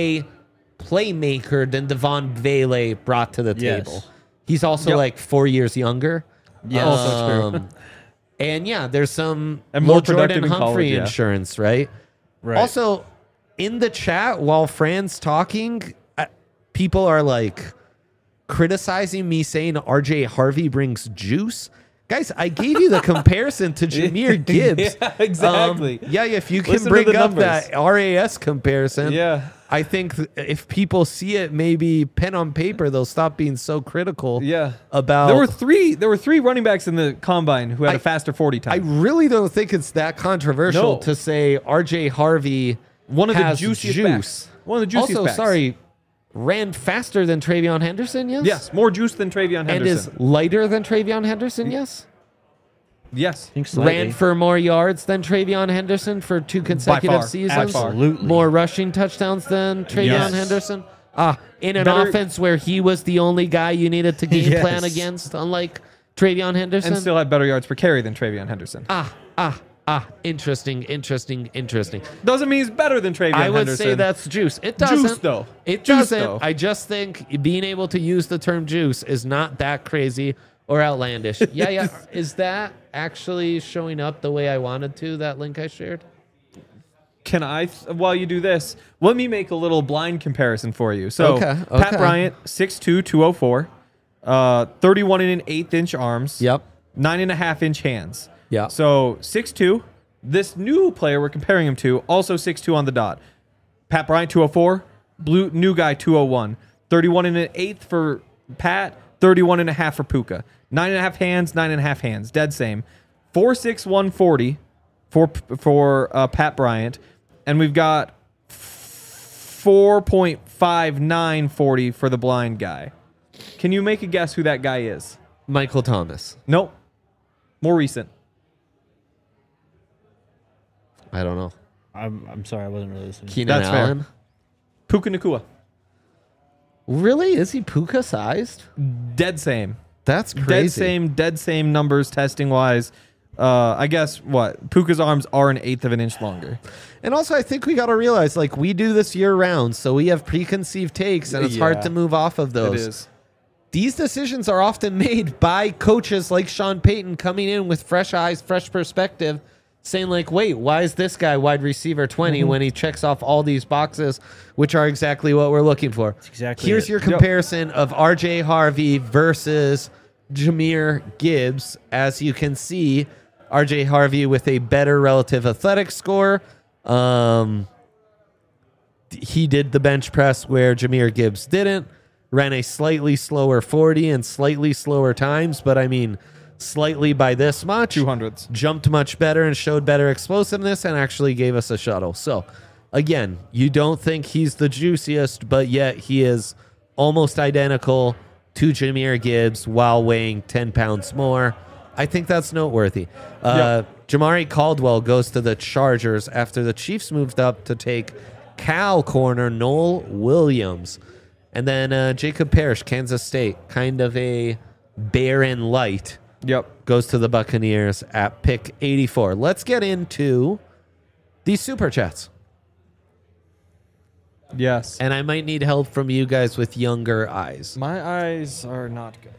playmaker than Devon Vele brought to the table. He's also like 4 years younger. Yes. Also true. And there's some and more Jordan productive in Humphrey college, insurance, right? Right. Also, in the chat while Fran's talking, people are like criticizing me saying RJ Harvey brings juice. Guys, I gave you the comparison to Jahmyr Gibbs. Yeah, exactly. If you can Listen to bring the up numbers. that RAS comparison, Yeah. I think if people see it, maybe pen on paper, they'll stop being so critical. Yeah. About There were three running backs in the combine who had a faster 40 I time. really don't think it's that controversial No. to say RJ Harvey One of the has juiciest juice. backs. One of the juiciest Also, backs. sorry, ran faster than Travion Henderson, yes? Yes, more juice than Travion Henderson. And is lighter than Travion Henderson, yes? Yes. I think slightly. Ran for more yards than Travion Henderson for 2 consecutive far. seasons. Absolutely. More rushing touchdowns than Travion Yes. Henderson. In an Better- offense where he was the only guy you needed to game plan Yes. against, unlike Travion Henderson? and still had better yards per carry than Travion Henderson. Interesting. Doesn't mean he's better than Travion Henderson. I would say that's juice. It doesn't. Juice, though. It Juice, doesn't. though. I just think being able to use the term juice is not that crazy or outlandish. Yeah. Is that actually showing up the way I wanted to, that link I shared? Can I, while you do this, let me make a little blind comparison for you. So, Okay. Pat Bryant, 6'2", 204, 31 1/8 inch arms. Yep. 9.5 inch hands. Yeah. So 6'2". This new player we're comparing him to, also 6'2" on the dot. Pat Bryant, 204. New guy, 201. 31 1/8 for Pat, 31 1/2 for Puka. 9.5 hands, 9.5 hands. Dead same. 4'6", 140 for Pat Bryant. And we've got 4.59 40 for the blind guy. Can you make a guess who that guy is? Michael Thomas. Nope. More recent. I don't know. I'm sorry, I wasn't really listening. Keenan That's fair. Allen. Puka Nacua. Really? Is he Puka sized? Dead same. That's crazy. Dead same numbers testing wise. I guess what? Puka's arms are 1/8 of an inch longer. And also, I think we got to realize, like, we do this year round, so we have preconceived takes, and it's hard Yeah. to move off of those. It is. These decisions are often made by coaches like Sean Payton coming in with fresh eyes, fresh perspective, saying like, wait, why is this guy wide receiver 20 when he checks off all these boxes, which are exactly what we're looking for? exactly Here's it. your comparison of RJ Harvey versus Jahmyr Gibbs. As you can see, RJ Harvey with a better relative athletic score. He did the bench press where Jahmyr Gibbs didn't. Ran a slightly slower 40 and slightly slower times, but I mean, slightly by this much. 200s. Jumped much better and showed better explosiveness and actually gave us a shuttle. So, again, you don't think he's the juiciest, but yet he is almost identical to Jahmyr Gibbs while weighing 10 pounds more. I think that's noteworthy. Jamari Caldwell goes to the Chargers after the Chiefs moved up to take Cal corner Noel Williams. And then Jacob Parrish, Kansas State, kind of a barren light, Yep. goes to the Buccaneers at pick 84. Let's get into these super chats. Yes. And I might need help from you guys with younger eyes. My eyes are not good.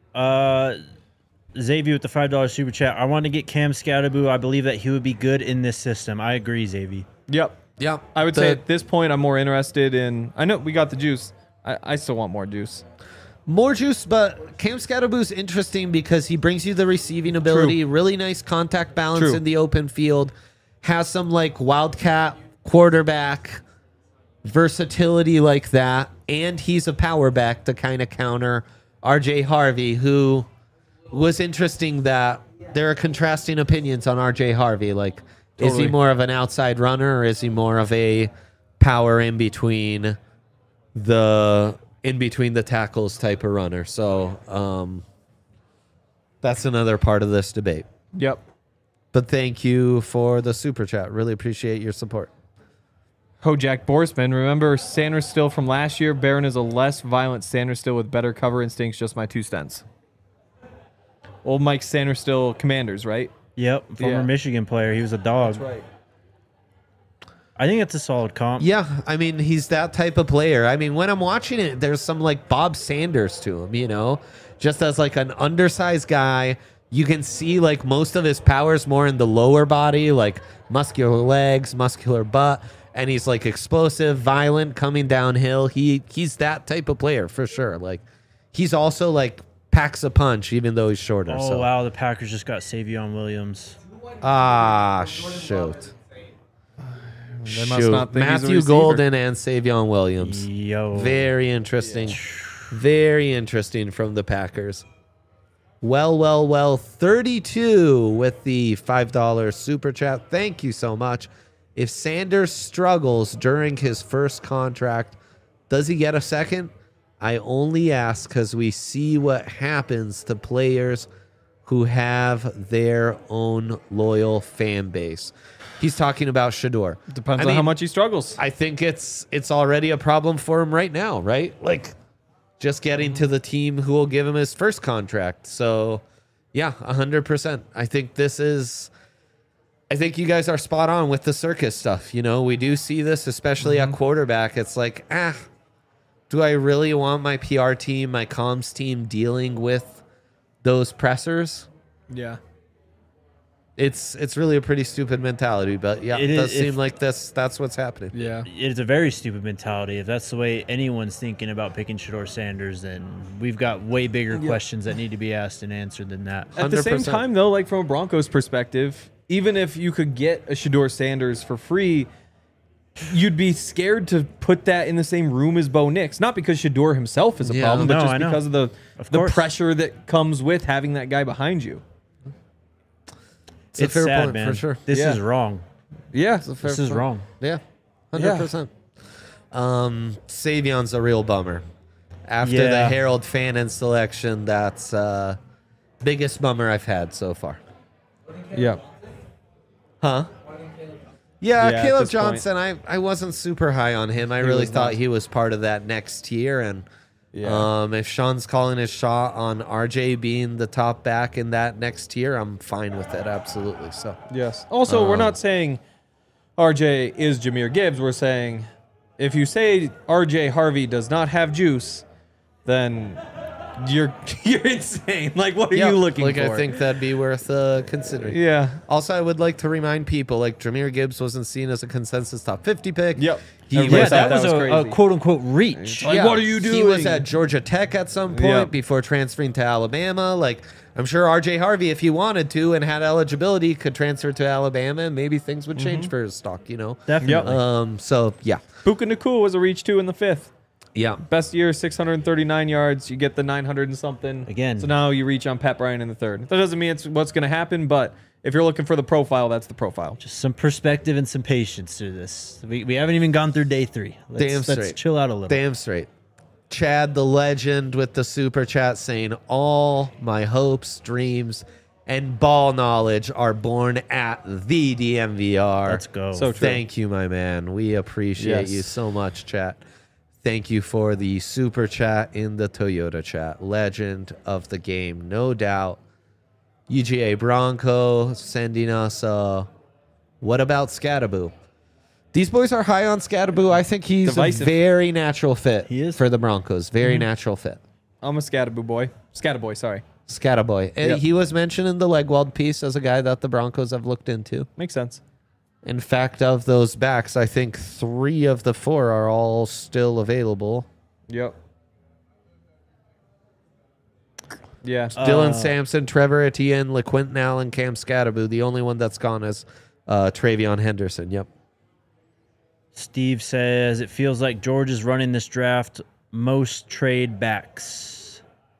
Xavier with the $5 super chat. I want to get Cam Scatterboo. I believe that he would be good in this system. I agree, Xavier. Yep. Yeah. I would say at this point, I'm more interested in. I know we got the juice. I still want more juice. More juice, but Cam Scatterboo's interesting because he brings you the receiving ability, really nice contact balance True. in the open field, has some like wildcat quarterback versatility like that, and he's a power back to kind of counter RJ Harvey, who was interesting that there are contrasting opinions on RJ Harvey. Like, is he Totally. more of an outside runner or is he more of a power in between the tackles type of runner? So that's another part of this debate. Yep. But thank you for the super chat. Really appreciate your support. Jack Borsman. Remember Sanders Still from last year? Barron is a less violent Sanders Still with better cover instincts. Just my 2 cents. Old Mike Sanders Still Commanders, right? Yep, former Yeah. Michigan player. He was a dog. That's right. I think it's a solid comp. Yeah, I mean, he's that type of player. I mean, when I'm watching it, there's some like Bob Sanders to him, you know, just as like an undersized guy. You can see like most of his powers more in the lower body, like muscular legs, muscular butt, and he's like explosive, violent, coming downhill. He's that type of player for sure. Like, he's also like packs a punch, even though he's shorter. Oh, so. wow. The Packers just got Savion Williams. Ah, shoot. They must not think he's a Matthew receiver. Golden and Savion Williams. Yo. Very interesting. Very interesting from the Packers. Well. 32 with the $5 super chat. Thank you so much. If Sanders struggles during his first contract, does he get a second? I only ask because we see what happens to players who have their own loyal fan base. He's talking about Shador. Depends on how much he struggles. I think it's already a problem for him right now, right? Like, just getting to the team who will give him his first contract. So Yeah, 100%. I think you guys are spot on with the circus stuff. We do see this, especially at quarterback. It's like, do I really want my PR team, my comms team dealing with those pressers? Yeah. It's really a pretty stupid mentality, but yeah, it does seem like that's what's happening. Yeah. It's a very stupid mentality. If that's the way anyone's thinking about picking Shedeur Sanders, then we've got way bigger questions that need to be asked and answered than that. At the same 100%. time, though, like from a Broncos perspective, even if you could get a Shedeur Sanders for free, you'd be scared to put that in the same room as Bo Nix. Not because Shedeur himself is a problem, but No, just I know. because of the course. pressure that comes with having that guy behind you. It's a fair sad, point, man. for sure. This Yeah. is wrong. Yeah. This is wrong. Yeah, 100%. Savion's a real bummer. After the Yeah. Harold Fannin selection, that's biggest bummer I've had so far. Yeah. Huh? Yeah, Yeah, at Caleb this point. Johnson, I wasn't super high on him. I really was thought not. he was part of that next tier. And Yeah. if Sean's calling his shot on RJ being the top back in that next tier, I'm fine with it. Absolutely. So, Yes. Also, we're not saying RJ is Jahmyr Gibbs. We're saying if you say RJ Harvey does not have juice, then you're insane. Like, what are you looking like, for? I think that'd be worth considering. Yeah. Also, I would like to remind people, like, Jahmyr Gibbs wasn't seen as a consensus top 50 pick. Yep. He Everybody was thought at, that was a crazy. quote-unquote reach. Like, what are you He was doing? at Georgia Tech at some point Yep. before transferring to Alabama. Like, I'm sure RJ Harvey, if he wanted to and had eligibility, could transfer to Alabama, and maybe things would change for his stock, Definitely. So, yeah. Puka Nacua was a reach 2 in the 5th. Yeah. Best year, 639 yards. You get the 900 and something. Again. So now you reach on Pat Bryant in the 3rd. That doesn't mean it's what's going to happen, but if you're looking for the profile, that's the profile. Just some perspective and some patience to this. We haven't even gone through day 3. Let's straight. chill out a little. Damn straight. Chad the legend with the super chat saying, all my hopes, dreams, and ball knowledge are born at the DMVR. Let's go. So true. Thank you, my man. We appreciate Yes. you so much, chat. Thank you for the super chat in the Toyota chat. Legend of the game, no doubt. UGA Bronco sending us what about Scattaboo? These boys are high on Scattaboo. I think he's Divisive. a very natural fit He is. for the Broncos. Very natural fit. I'm a Scattaboo boy. Scattaboy, sorry. Scattaboy. Yep. He was mentioned in the Legwald piece as a guy that the Broncos have looked into. Makes sense. In fact, of those backs, I think 3 of the 4 are all still available. Yep. Yeah. Dylan Sampson, Trevor Etienne, LeQuentin Allen, Cam Scattaboo. The only one that's gone is Travion Henderson. Yep. Steve says, it feels like George is running this draft most trade backs.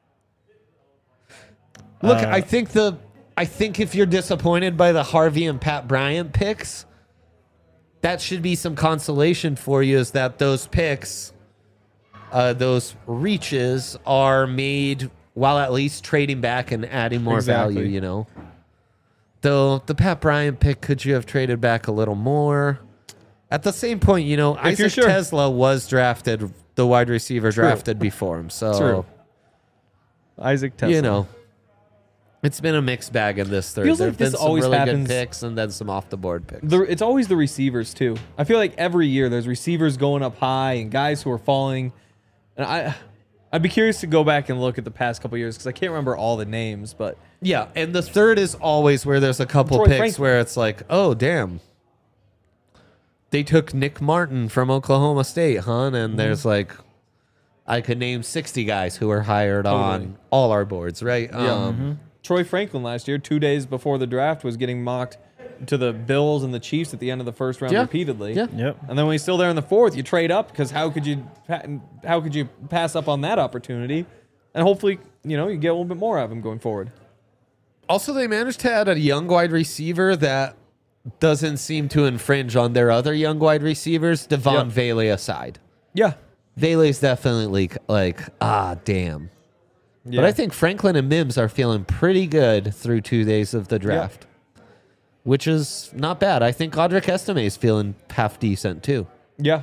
Look, I think if you're disappointed by the Harvey and Pat Bryant picks, that should be some consolation for you, is that those picks, those reaches are made while at least trading back and adding more Exactly. value, Though the Pat Bryant pick, could you have traded back a little more? At the same point, you're Isaac sure. Tesla was drafted, the wide receiver drafted before him. So, True. Isaac Tesla. it's been a mixed bag in this third. Feels There like have been this some always really happens- good picks and then some off the board picks. It's always the receivers too. I feel like every year there's receivers going up high and guys who are falling. And I'd be curious to go back and look at the past couple years because I can't remember all the names, but Yeah, and the third is always where there's a couple Troy picks Franklin. where it's like, oh, damn. They took Nick Martin from Oklahoma State, huh? Mm-hmm. And there's like, I could name 60 guys who were hired Totally. on all our boards, right? Troy Franklin last year, 2 days before the draft, was getting mocked to the Bills and the Chiefs at the end of the first round Yeah. repeatedly. Yeah. Yep. And then when he's still there in the 4th, you trade up because how could you pass up on that opportunity? And hopefully, you get a little bit more out of him going forward. Also, they managed to add a young wide receiver that doesn't seem to infringe on their other young wide receivers, Devon Yep. Vele aside. Yeah. Vele's definitely like, damn. Yeah. But I think Franklin and Mims are feeling pretty good through 2 days of the draft, which is not bad. I think Audric Estime is feeling half decent too. Yeah.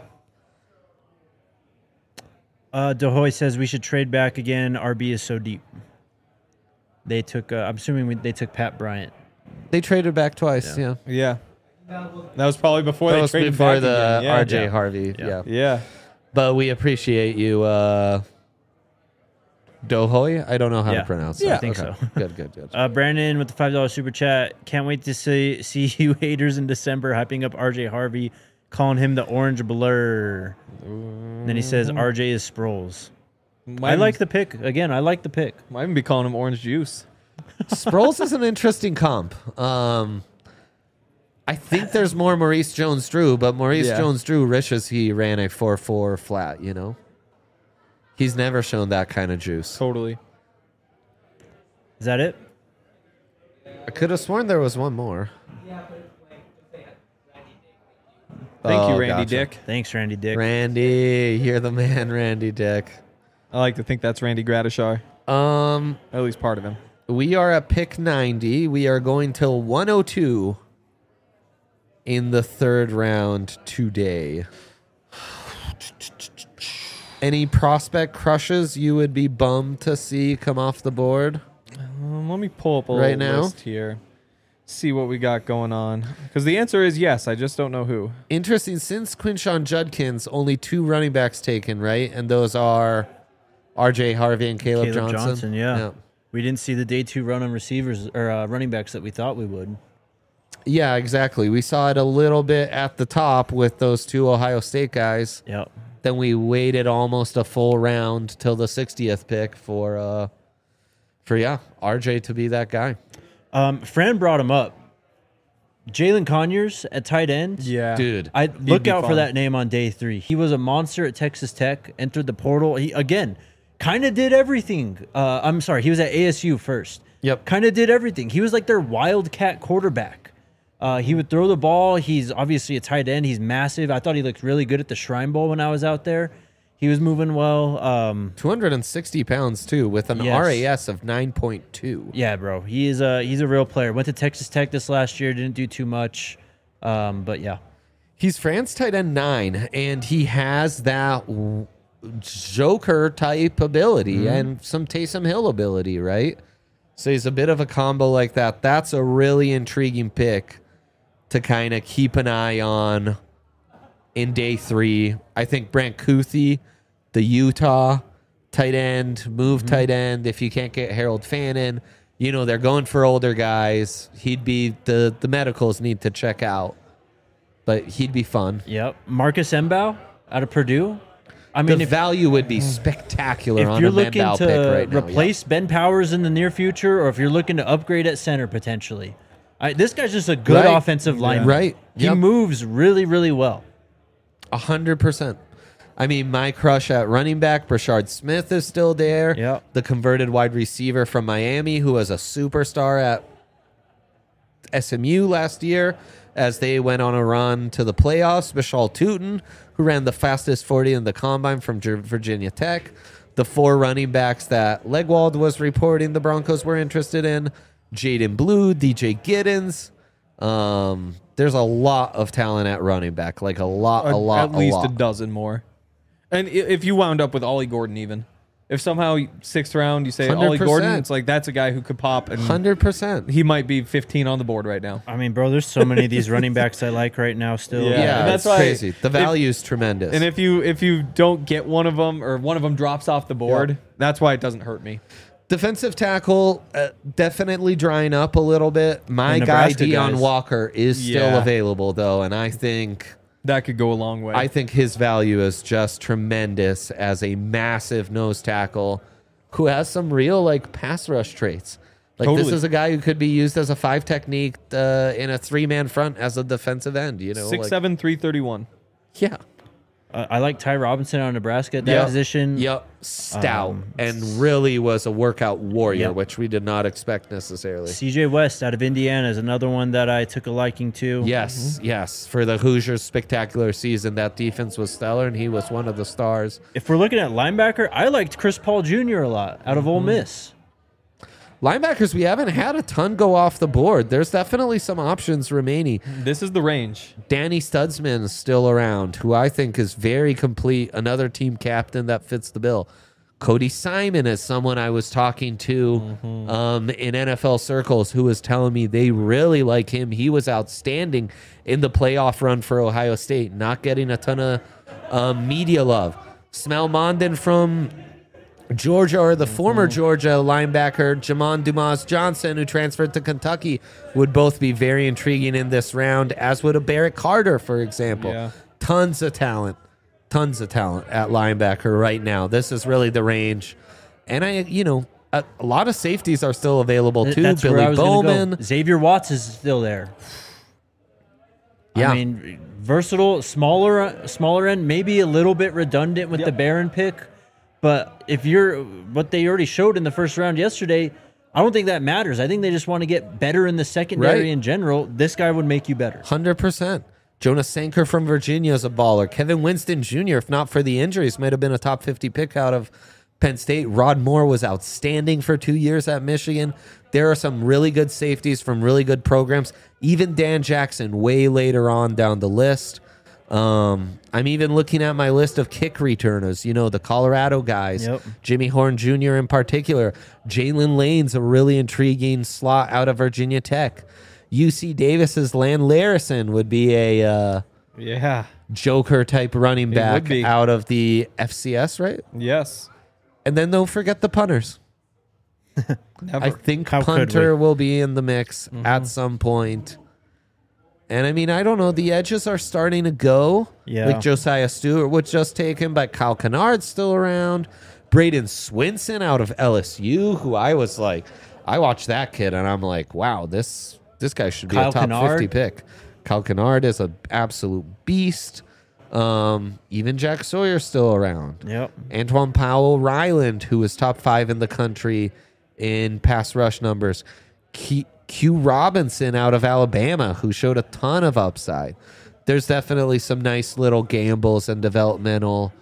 Dehoy says we should trade back again. RB is so deep. They took. I'm assuming they took Pat Bryant. They traded back twice. Yeah. Yeah. That was probably before That they was traded before back the again. Yeah. RJ Harvey. Yeah. Yeah. But we appreciate you, Dohoy. I don't know how Yeah. to pronounce that. Yeah, I think Okay. so. Good. Brandon with the $5 super chat. Can't wait to see you haters in December hyping up RJ Harvey, calling him the orange blur. And then he says RJ is Sproles. I like the pick. Again, I like the pick. Might even be calling him orange juice. Sproles is an interesting comp. I think there's more Maurice Jones-Drew, but Maurice Jones-Drew wishes he ran a 4.4 flat, you know? He's never shown that kind of juice. Totally. Is that it? I could have sworn there was one more. Thank you, Oh, Randy gotcha. Dick. Thanks, Randy Dick. Randy, you're the man, Randy Dick. I like to think that's Randy Gratishar. At least part of him. We are at pick 90. We are going till 102 in the third round today. Any prospect crushes you would be bummed to see come off the board? Let me pull up a Right little now? list here. See what we got going on. Because the answer is yes. I just don't know who. Interesting. Since Quinshon Judkins, only 2 running backs taken, right? And those are RJ Harvey and Caleb Johnson. Yeah. We didn't see the day 2 run on receivers or running backs that we thought we would. Yeah, exactly. We saw it a little bit at the top with those 2 Ohio State guys. Yep. Then we waited almost a full round till the 60th pick for RJ to be that guy. Fran brought him up. Jalen Conyers at tight end. Yeah. Dude. I look be out for fun. that name on day 3. He was a monster at Texas Tech, entered the portal. He, again, kind of did everything. I'm sorry, he was at ASU first. Yep. Kind of did everything. He was like their wildcat quarterback. He would throw the ball. He's obviously a tight end. He's massive. I thought he looked really good at the Shrine Bowl when I was out there. He was moving well. 260 pounds, too, with an Yes. RAS of 9.2. Yeah, bro. He's a real player. Went to Texas Tech this last year. Didn't do too much. But, yeah. He's France tight end 9, and he has that Joker type ability and some Taysom Hill ability, right? So he's a bit of a combo like that. That's a really intriguing pick to kind of keep an eye on in day 3. I think Brant Kuthi, the Utah tight end, tight end. If you can't get Harold Fannin, you know, they're going for older guys. He'd be the medicals need to check out, but he'd be fun. Yep. Marcus Mbow out of Purdue. I The mean, value would be spectacular if on you're a looking Mendel to pick right now. replace Ben Powers in the near future, or if you're looking to upgrade at center potentially, this guy's just a good Right. offensive lineman. Right. He Yep. moves really, really well. 100%. I mean, my crush at running back, Brashard Smith, is still there. Yep. The converted wide receiver from Miami, who was a superstar at SMU last year as they went on a run to the playoffs. Bashal Tootin, who ran the fastest 40 in the combine from Virginia Tech. The 4 running backs that Legwald was reporting the Broncos were interested in. Jaden Blue, DJ Giddens. There's a lot of talent at running back, like a lot. At least a dozen more. And if you wound up with Ollie Gordon, even if somehow 6th round you say Ollie 100%. Gordon, it's like that's a guy who could pop, and 100%. he might be 15 on the board right now. I mean, bro, there's so many of these running backs I like right now still. Yeah. Yeah, and that's that's why crazy. The value is tremendous. And if you don't get one of them, or one of them drops off the board, that's why it doesn't hurt me. Defensive tackle, definitely drying up a little bit. My The guy, Nebraska Deion guys. Walker, is still Yeah. available, though, and I think That could go a long way. his value is just tremendous as a massive nose tackle who has some real, like, pass rush traits. Like, this Totally. is a guy who could be used as a 5 technique in a 3-man front as a defensive end, you know? 6'7", 331. Yeah. I like Ty Robinson on Nebraska at that position. Yep. Stout. And really was a workout warrior, Yep. which we did not expect necessarily. CJ West out of Indiana is another one that I took a liking to. Yes, yes. For the Hoosiers' spectacular season, that defense was stellar, and he was one of the stars. If we're looking at linebacker, I liked Chris Paul Jr. a lot out of Ole Miss. Linebackers, we haven't had a ton go off the board. There's definitely some options remaining. This is the range. Danny Studsman is still around, who I think is very complete. Another team captain that fits the bill. Cody Simon is someone I was talking to in NFL circles who was telling me they really like him. He was outstanding in the playoff run for Ohio State, not getting a ton of media love. Smell Mondin from Georgia, or the former Georgia linebacker Jamon Dumas Johnson, who transferred to Kentucky, would both be very intriguing in this round, as would a Barrett Carter, for example. Yeah. Tons of talent at linebacker right now. This is really the range. And a lot of safeties are still available too. That's where I Billy was gonna Bowman. go. Xavier Watts is still there. Yeah. I mean, versatile, smaller end, maybe a little bit redundant with the Barron pick. But if you're what they already showed in the first round yesterday, I don't think that matters. I think they just want to get better in the secondary in general. This guy would make you better. 100%. Jonas Sanker from Virginia is a baller. Kevin Winston Jr., if not for the injuries, might have been a top 50 pick out of Penn State. Rod Moore was outstanding for 2 years at Michigan. There are some really good safeties from really good programs. Even Dan Jackson way later on down the list. I'm even looking at my list of kick returners, the Colorado guys, Jimmy Horn Jr. in particular. Jalen Lane's a really intriguing slot out of Virginia Tech. UC Davis's Land Larison would be a Joker type running back out of the FCS, right? Yes. And then don't forget the punters. Never. I think How could punter we? will be in the mix at some point. And I mean, I don't know. The edges are starting to go. Yeah. Like Josiah Stewart was just taken, but Kyle Kennard's still around. Braden Swinson out of LSU, who I was like, I watched that kid and I'm like, wow, this guy should be Kyle a top Kennard? 50 pick. Kyle Kennard is an absolute beast. Even Jack Sawyer's still around. Yep. Antoine Powell Ryland, who was top 5 in the country in pass rush numbers. Q Robinson out of Alabama, who showed a ton of upside. There's definitely some nice little gambles and developmental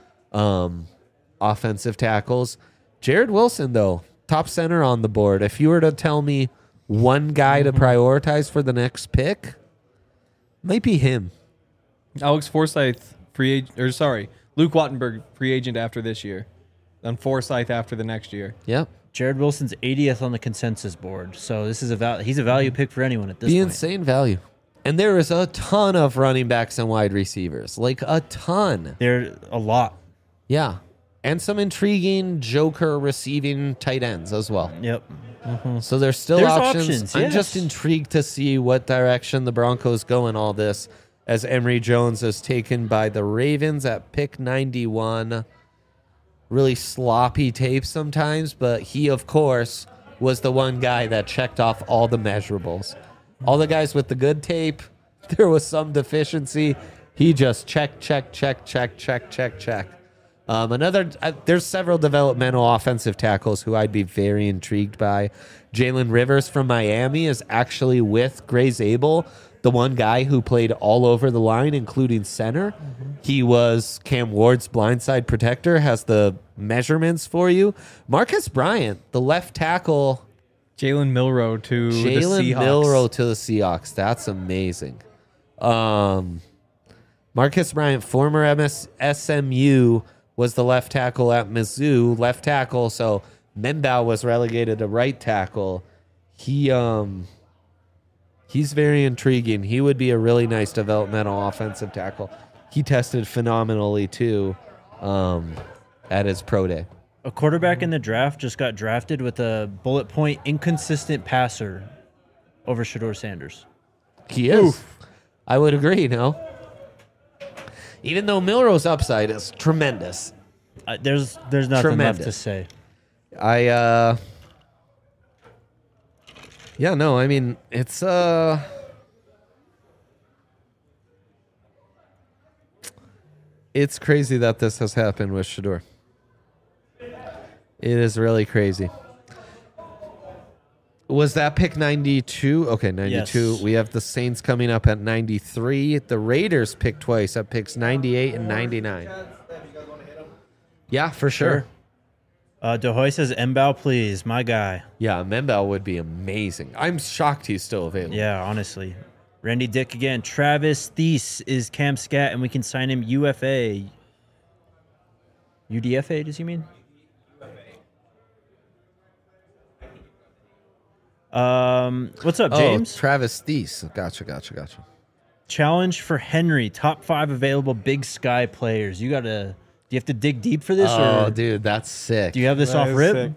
offensive tackles. Jared Wilson, though, top center on the board. If you were to tell me one guy to prioritize for the next pick, might be him. Alex Forsyth, Luke Wattenberg, free agent after this year. Then Forsyth after the next year. Yep. Jared Wilson's 80th on the consensus board. So this is he's a value pick for anyone at this Be point. insane value. And there is a ton of running backs and wide receivers. Like a ton. There a lot. Yeah. And some intriguing Joker receiving tight ends as well. Yep. So there's still There's options. options, I'm yes. just intrigued to see what direction the Broncos go in all this, as Emory Jones is taken by the Ravens at pick 91. Really sloppy tape sometimes, but he, of course, was the one guy that checked off all the measurables. All the guys with the good tape, there was some deficiency. He just check. There's several developmental offensive tackles who I'd be very intrigued by. Jalen Rivers from Miami is actually with Gray Zabel, the one guy who played all over the line, including center. He was Cam Ward's blindside protector, has the measurements for you. Marcus Bryant, the left tackle. Jalen Milroe to the Jalen Seahawks. Milroe to the Seahawks. That's amazing. Marcus Bryant, former SMU, was the left tackle at Mizzou. Left tackle, so Mendau was relegated to right tackle. He's very intriguing. He would be a really nice developmental offensive tackle. He tested phenomenally, too, at his pro day. A quarterback in the draft just got drafted with a bullet point inconsistent passer over Shedeur Sanders. He is. Oof. I would agree, no? Even though Milroe's upside is tremendous. There's nothing left to say. Yeah, no, I mean, it's crazy that this has happened with Shedeur. It is really crazy. Was that pick 92? Okay, 92. Yes. We have the Saints coming up at 93. The Raiders pick twice at picks 98 and 99. Yeah, for sure. DeHoy says, Mbao, please, my guy. Yeah, Membao would be amazing. I'm shocked he's still available. Yeah, honestly. Randy Dick again. Travis Thies is Cam Scat, and we can sign him UFA. UDFA, does he mean? What's up, James? Travis Deese. Gotcha. Challenge for Henry. Top 5 available Big Sky players. Do you have to dig deep for this? Oh, or dude, that's sick. do you have this That off is rip? sick.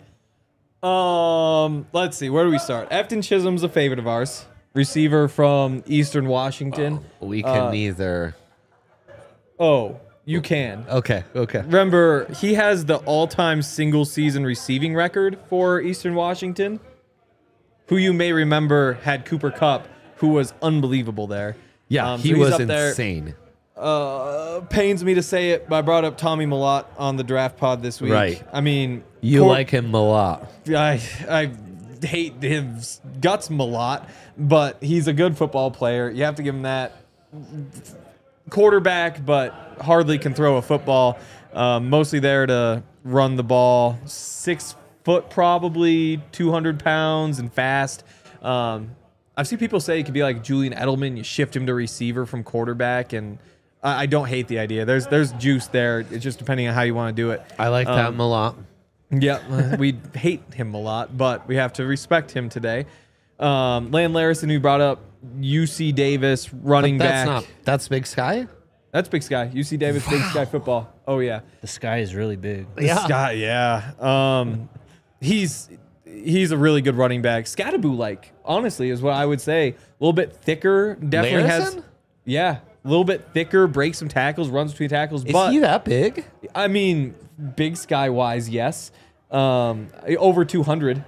Let's see. Where do we start? Efton Chisholm's a favorite of ours. Receiver from Eastern Washington. We can neither. Oh, you can. Okay. Remember, he has the all-time single-season receiving record for Eastern Washington, who you may remember had Cooper Kupp, who was unbelievable there. Yeah, So he he's was up there. insane. Pains me to say it, but I brought up Tommy Millott on the draft pod this week. Right. I mean, You like him a lot. I hate his guts a lot, but he's a good football player. You have to give him that. Quarterback, but hardly can throw a football. Mostly there to run the ball. 6 foot, probably 200 pounds, and fast. I've seen people say he could be like Julian Edelman. You shift him to receiver from quarterback, and I don't hate the idea. There's juice there. It's just depending on how you want to do it. I like that a lot. Yeah, we hate him a lot, but we have to respect him today. Land Larison, who brought up UC Davis, running back. That's Big Sky? That's Big Sky. UC Davis, Big Sky football. Oh, yeah. The sky is really big. Scott, yeah. He's a really good running back. Scattaboo, honestly, is what I would say. A little bit thicker. Definitely has. Larison? Yeah, a little bit thicker, breaks some tackles, runs between tackles. Is but he that big? I mean, Big Sky wise, yes. Over 200.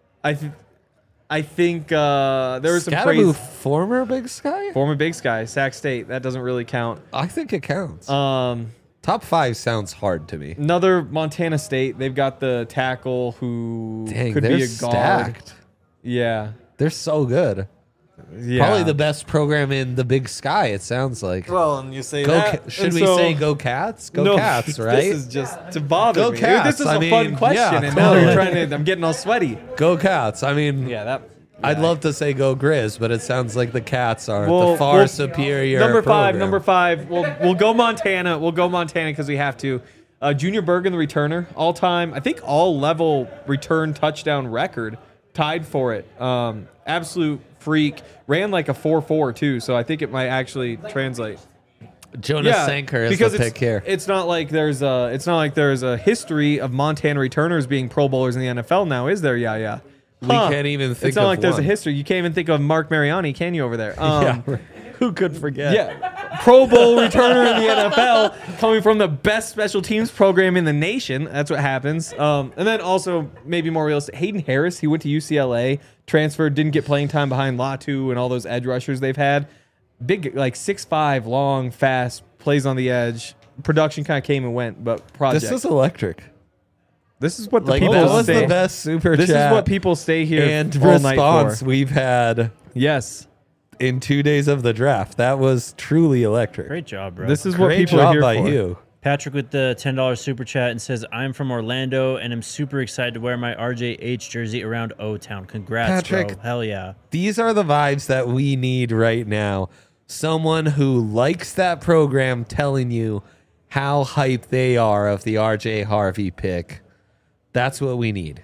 I think there was some Scattaboo, praise. former Big Sky? Former Big Sky, Sac State. That doesn't really count. I think it counts. Um, Top 5 sounds hard to me. Another Montana State. They've got the tackle who Dang, could they're be a guard. stacked. Yeah. They're so good. Yeah. Probably the best program in the Big Sky, it sounds like. Well, and you say Go that. Should and we so- say go Cats? Go No, Cats, right? This is just to bother Go me. Cats. This is I a fun mean, question, yeah, and now you're totally. trying to. I'm getting all sweaty. Go Cats. I mean, I'd love to say go Grizz, but it sounds like the Cats are the far superior Number program. five. We'll go Montana. We'll go Montana because we have to. Junior Bergen, the returner, all time. I think all level return touchdown record, tied for it. Absolute freak. Ran like a 4.4 too, so I think it might actually translate. Jonas Sanker is because the pick here. It's not like there's a history of Montana returners being Pro Bowlers in the NFL now, is there? Yeah. We can't even think It's not of like there's a one. history. You can't even think of Mark Mariani, can you, over there? Yeah, right. Who could forget? Yeah. Pro Bowl returner in the NFL coming from the best special teams program in the nation. That's what happens. And then also, maybe more realistic, Hayden Harris, he went to UCLA, transferred, didn't get playing time behind Latu and all those edge rushers they've had. Big, 6'5", long, fast, plays on the edge. Production kind of came and went, but project. This is electric. This is what the Like, people that was say. the best super This chat is what people stay here and all night response for. we've had Yes. in 2 days of the draft. That was truly electric. Great job, bro. This is what Great people are job here by for. you. Patrick with the $10 super chat and says, I'm from Orlando and I'm super excited to wear my RJH jersey around O-Town. Congrats, Patrick, bro. Hell yeah. These are the vibes that we need right now. Someone who likes that program telling you how hyped they are of the RJ Harvey pick. That's what we need.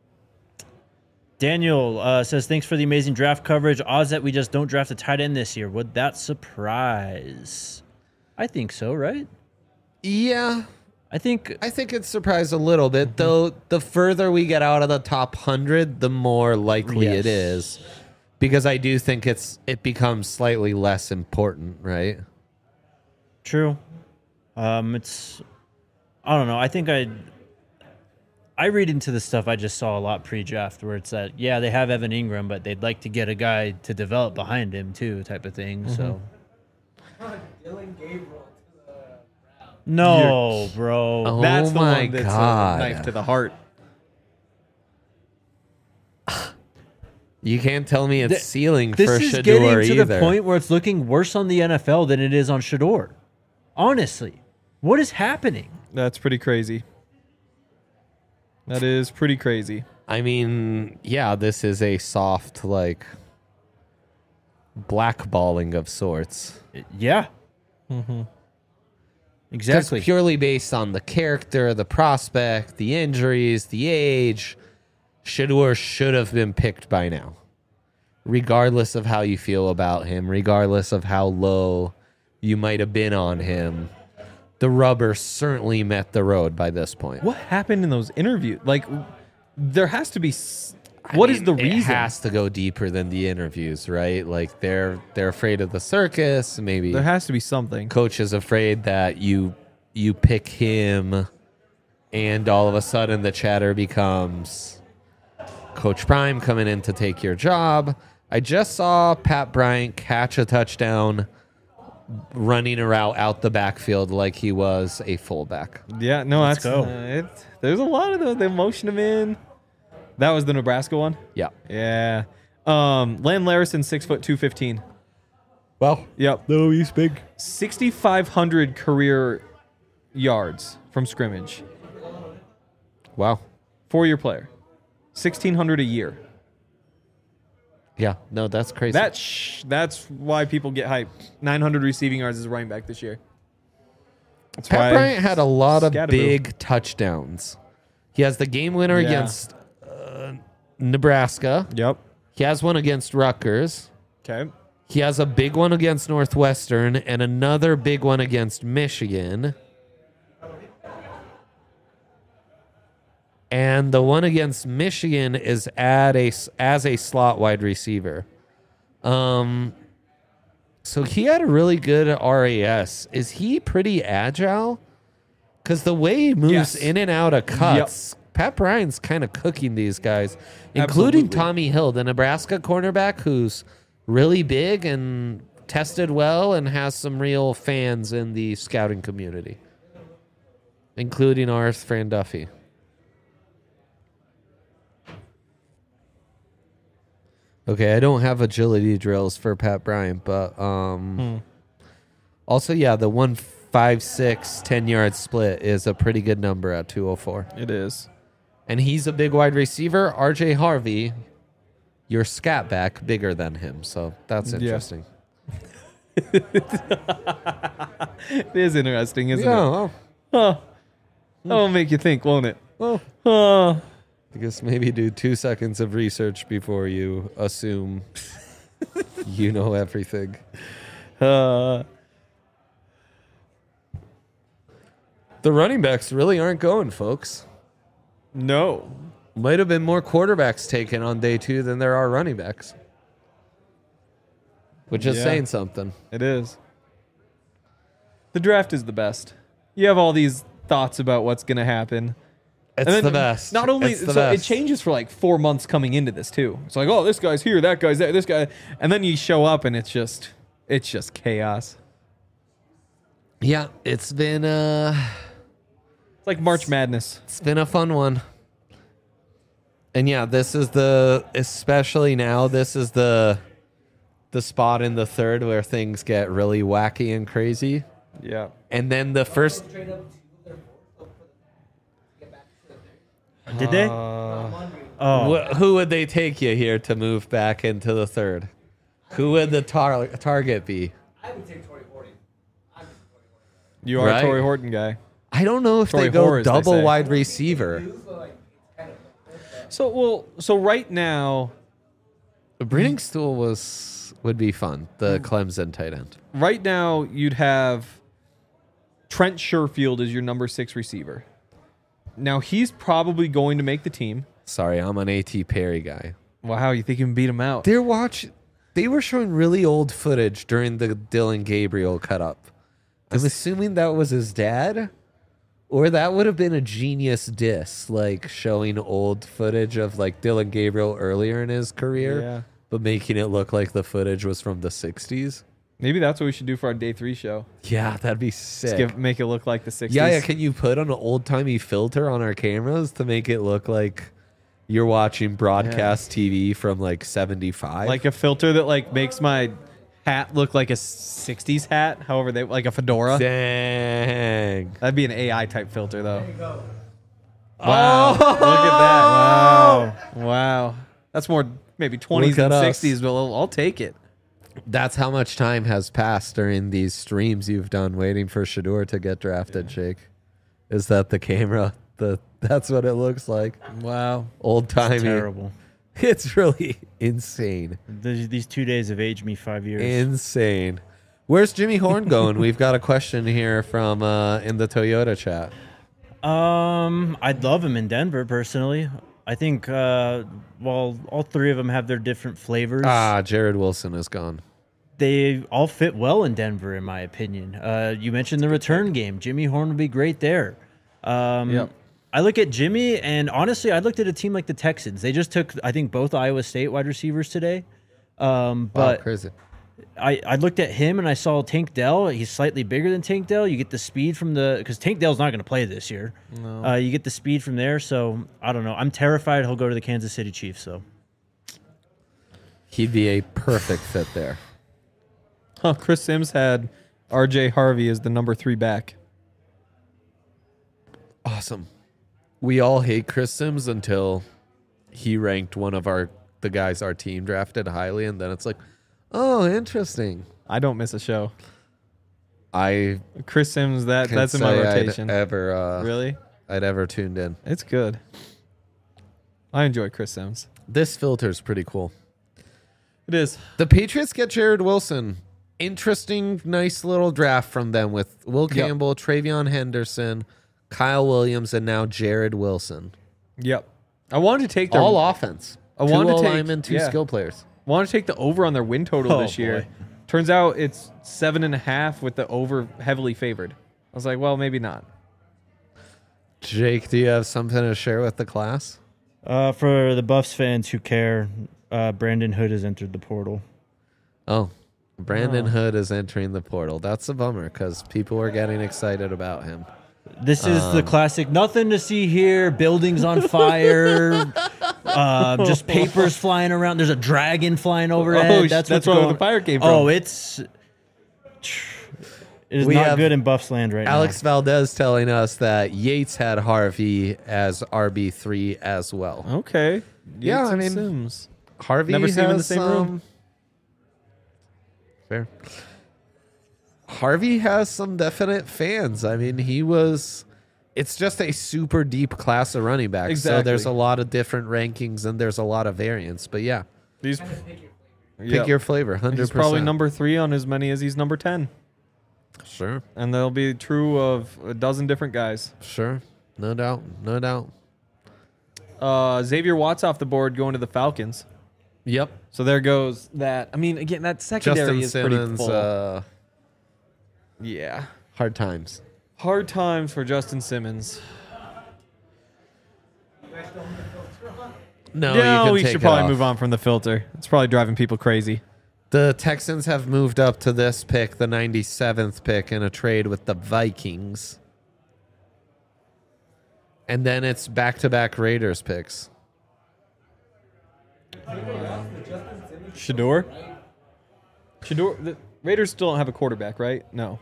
Daniel says, thanks for the amazing draft coverage. Odds that we just don't draft a tight end this year. Would that surprise? I think so, right? Yeah, I think it surprised a little bit, though. The further we get out of the top 100, the more likely Yes. it is. Because I do think it becomes slightly less important, right? true. It's, I don't know. I think I read into the stuff I just saw a lot pre-draft where it's that, yeah, they have Evan Ingram, but they'd like to get a guy to develop behind him too, type of thing. So Dylan Gabriel. no, bro. Oh That's the my one that's God. a knife to the heart. You can't tell me it's ceiling This for is Shador getting to either. the point where it's looking worse on the NFL than it is on Shador. Honestly, what is happening? That's pretty crazy. That is pretty crazy. I mean, yeah, this is a soft, blackballing of sorts. Yeah. Because Exactly. purely based on the character, the prospect, the injuries, the age, Shador should have been picked by now. regardless of how you feel about him, regardless of how low you might have been on him, the rubber certainly met the road by this point. What happened in those interviews? Like, there has to be. What is the reason? It has to go deeper than the interviews, right? Like they're afraid of the circus. Maybe There has to be something. coach is afraid that you pick him, and all of a sudden the chatter becomes Coach Prime coming in to take your job. I just saw Pat Bryant catch a touchdown running a route out the backfield like he was a fullback. Yeah, no, Let's that's go. there's a lot of those. They motion him in. That was the Nebraska one. Yeah. Yeah. Len Larison, 6 foot 215. Well, Yep. no, he's big. 6,500 career yards from scrimmage. Wow. 4-year player. 1,600 a year. Yeah. No, that's crazy. That's why people get hyped. 900 receiving yards as a running back this year. That's Pat why Bryant had a lot of Scatterboo. big touchdowns. He has the game winner Yeah. against Nebraska. Yep. He has one against Rutgers. Okay. He has a big one against Northwestern and another big one against Michigan. And the one against Michigan is as a slot wide receiver. So he had a really good RAS. Is he pretty agile? Because the way he moves Yes. in and out of cuts, Pat Bryant's kind of cooking these guys, including Absolutely. Tommy Hill, the Nebraska cornerback, who's really big and tested well and has some real fans in the scouting community, including ours, Fran Duffy. Okay, I don't have agility drills for Pat Bryant, but also, yeah, the 1.56 10-yard split is a pretty good number at 204. It is. And he's a big wide receiver. RJ Harvey, your scat back, bigger than him. So that's interesting. It is interesting, isn't Yeah, it? well, Huh. That'll make you think, won't it? well, Huh. I guess maybe do 2 seconds of research before you assume you know everything. Uh, The running backs really aren't going, folks. no. Might have been more quarterbacks taken on day 2 than there are running backs. Which is Yeah. saying something. It is. The draft is the best. You have all these thoughts about what's going to happen. It's And then the best. Not only It's the so it best. changes for like 4 months coming into this too. It's like, oh, this guy's here, that guy's there, this guy, and then you show up and it's just chaos. Yeah, it's been It's like March Madness. it's been a fun one. And yeah, this is especially now, this is the spot in the third where things get really wacky and crazy. Yeah. And then the first Did they? who would they take you here to move back into the third? Who would the target be? I would take Torrey Horton. You are Right. a Torrey Horton guy. I don't know if Torrey they go Hoare, as they double say. wide receiver. So right now, Breedingstool would be fun. The Clemson tight end. you'd have Trent Sherfield as your number 6 receiver. Now he's probably going to make the team. Sorry, I'm an A.T. Perry guy. Wow, you think you can beat him out? They were showing really old footage during the Dylan Gabriel cut up. I'm assuming that was his dad, or that would have been a genius diss, like showing old footage of like Dylan Gabriel earlier in his career, Yeah. but making it look like the footage was from the 60s. Maybe that's what we should do for our day 3 show. Yeah, that'd be Just sick. make it look like the 60s. Yeah, can you put an old timey filter on our cameras to make it look like you're watching broadcast TV from like 75? Like a filter that like makes my hat look like a 60s hat. However, they like a fedora. Dang. That'd be an AI type filter though. Wow. Look at that. Wow. That's more maybe 20s Look at than us. 60s, but I'll take it. That's how much time has passed during these streams you've done waiting for Shador to get drafted, Jake. Is that the camera? That's what it looks like. Wow. Old timey. Terrible. It's really insane. These 2 days have aged me 5 years. Insane. Where's Jimmy Horn going? We've got a question here from in the Toyota chat. I'd love him in Denver personally. I think while all three of them have their different flavors, Jared Wilson is gone. they all fit well in Denver, in my opinion. You mentioned the return game. Jimmy Horn would be great there. Yep. I look at Jimmy, and honestly, I looked at a team like the Texans. They just took, I think, both Iowa State wide receivers today. But Crazy. I looked at him and I saw Tank Dell. He's slightly bigger than Tank Dell. You get the speed from because Tank Dell's not going to play this year. No. You get the speed from there. So I don't know. I'm terrified he'll go to the Kansas City Chiefs. So He'd be a perfect fit there. Huh, Chris Sims had R.J. Harvey as the number 3 back. Awesome. We all hate Chris Sims until he ranked one of the guys our team drafted highly, and then it's like, oh, interesting. I don't miss a show. I Chris Sims, can't that's in my say rotation. Really? Really? I'd ever tuned in. It's good. I enjoy Chris Sims. This filter's pretty cool. It is. The Patriots get Jared Wilson. Interesting, nice little draft from them with Will Campbell, Travion Henderson, Kyle Williams, and now Jared Wilson. Yep. I wanted to take their All offense. I wanted to take linemen, two skill players. wanted to take the over on their win total this year. boy. Turns out it's 7.5 with the over heavily favored. I was like, well, maybe not. Jake, do you have something to share with the class? for the Buffs fans who care, Brandon Hood has entered the portal. Oh, Brandon Hood is entering the portal. That's a bummer because people were getting excited about him. This is the classic. Nothing to see here. Buildings on fire. Just papers flying around. There's a dragon flying overhead. Oh, that's that's what's where going. the fire came from. Oh, it is We not have good in Buffs land right Alex Valdez telling us that Yates had Harvey as RB3 as well. Okay. Yeah, Yates I and mean- Sims. Harvey Never seen him in the has same room. Fair. Harvey has some definite fans. I mean, it's just a super deep class of running backs. So Exactly. there's a lot of different rankings and there's a lot of variance. But yeah, These, pick your flavor, 100%. He's probably number 3 on as many as he's number 10. Sure, And they'll be true of a dozen different guys. sure. No doubt, no doubt. Xavier Watts off the board going to the Falcons. Yep. So there goes that. I mean, again, that secondary Justin is pretty Simmons, full. Yeah. hard times. Hard times for Justin Simmons. No, No, you can we take should it probably off. move on from the filter. It's probably driving people crazy. The Texans have moved up to this pick, the 97th pick, in a trade with the Vikings. And then it's back-to-back Raiders picks. Shador? The Raiders still don't have a quarterback, right? No.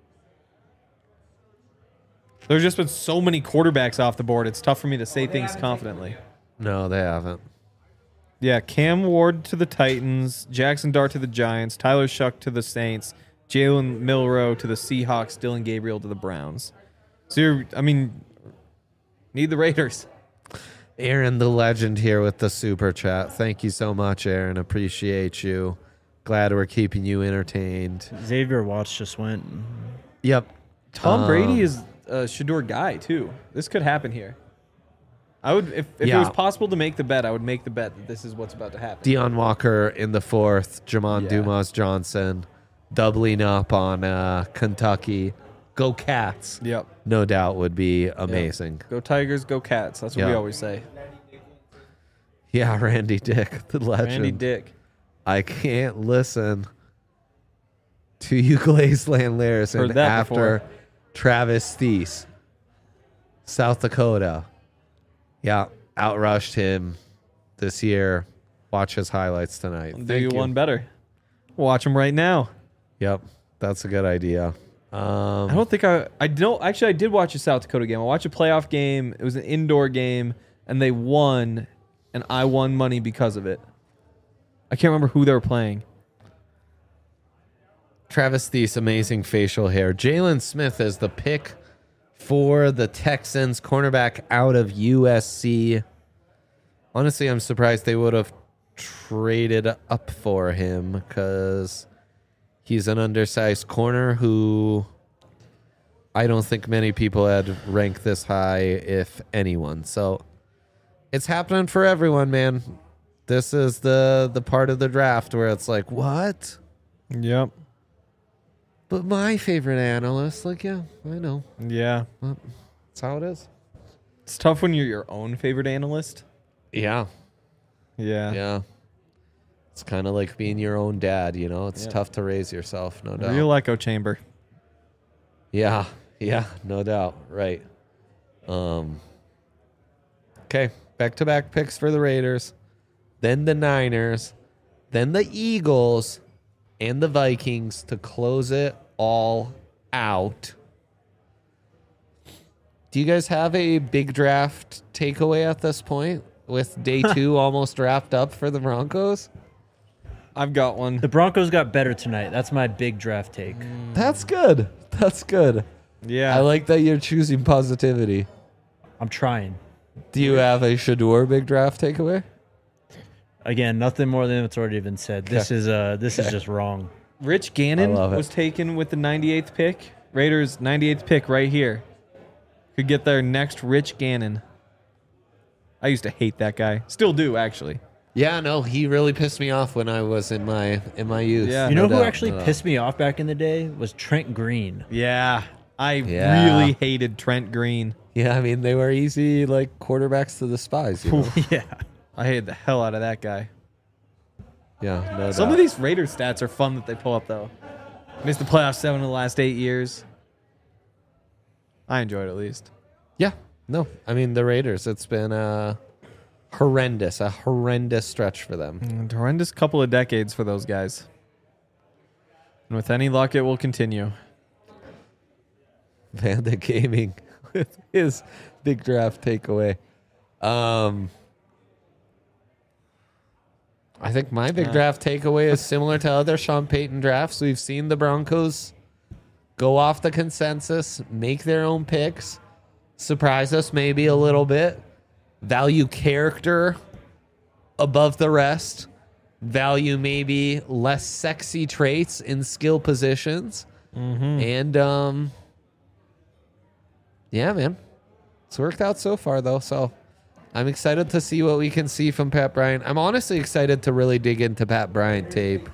There's just been so many quarterbacks off the board. It's tough for me to say things confidently. No, they haven't. Yeah, Cam Ward to the Titans, Jackson Dart to the Giants, Tyler Shuck to the Saints, Jalen Milrow to the Seahawks, Dylan Gabriel to the Browns. So need the Raiders. Aaron, the legend, here with the super chat. Thank you so much, Aaron. Appreciate you. Glad we're keeping you entertained. now. Xavier Watts just went. Yep. Tom Brady is a Shador guy too. This could happen here. I would if it Yeah. was possible to make the bet, I would make the bet that this is what's about to happen. Deion Walker in the 4th. Jamon Yeah. Dumas Johnson doubling up on Kentucky. Go Cats. Yep. No doubt would be amazing. Go Tigers, go Cats. That's what we Yeah. always say. Yeah, Randy Dick, the legend. Randy Dick. I can't listen to you, Glazeland Larison, Heard that after before. Travis Thies, South Dakota. Yeah, outrushed him this year. Watch his highlights tonight. I'll do Thank you you. one better. Watch him right now. Yep, that's a good idea. I don't think I don't actually. I did watch a South Dakota game. I watched a playoff game. It was an indoor game, and they won, and I won money because of it. I can't remember who they were playing. Travis Thies, amazing facial hair. Jalen Smith is the pick for the Texans, cornerback out of USC. Honestly, I'm surprised they would have traded up for him because he's an undersized corner who I don't think many people had ranked this high, if anyone. So it's happening for everyone, man. This is the part of the draft where it's like, what? Yep. But my favorite analyst, like, yeah, I know. Yeah. Well, that's how it is. It's tough when you're your own favorite analyst. Yeah. Yeah. Yeah. It's kind of like being your own dad, you know? It's Yeah. tough to raise yourself, no doubt. Real echo chamber. Yeah. Yeah, no doubt. Right. Okay. Back-to-back picks for the Raiders. Then the Niners. Then the Eagles. And the Vikings to close it all out. Do you guys have a big draft takeaway at this point with day 2 almost wrapped up for the Broncos? I've got one. The Broncos got better tonight. That's my big draft take. That's good. That's good. Yeah. I like that you're choosing positivity. I'm trying. Do you have a Shador big draft takeaway? Again, nothing more than what's already been said. This is just wrong. Rich Gannon I love it. was taken with the 98th pick. Raiders 98th pick right here. Could get their next Rich Gannon. I used to hate that guy. Still do, actually. Yeah, no, he really pissed me off when I was in my youth. Yeah. You know No who doubt, actually no doubt. pissed me off back in the day was Trent Green. Yeah. I Yeah. really hated Trent Green. Yeah, I mean they were easy like quarterbacks to despise. You know? Yeah. I hated the hell out of that guy. Yeah, no Some doubt. of these Raiders stats are fun that they pull up, though. Missed the playoffs 7 of the last 8 years. I enjoyed it at least. Yeah, no, I mean the Raiders. It's been a horrendous stretch for them. Horrendous couple of decades for those guys. And with any luck, it will continue. Vanda Gaming with his big draft takeaway. I think my big draft takeaway is similar to other Sean Payton drafts. We've seen the Broncos go off the consensus, make their own picks, surprise us maybe a little bit, value character above the rest, value maybe less sexy traits in skill positions, and yeah, man, it's worked out so far though. So I'm excited to see what we can see from Pat Bryant. I'm honestly excited to really dig into Pat Bryant tape.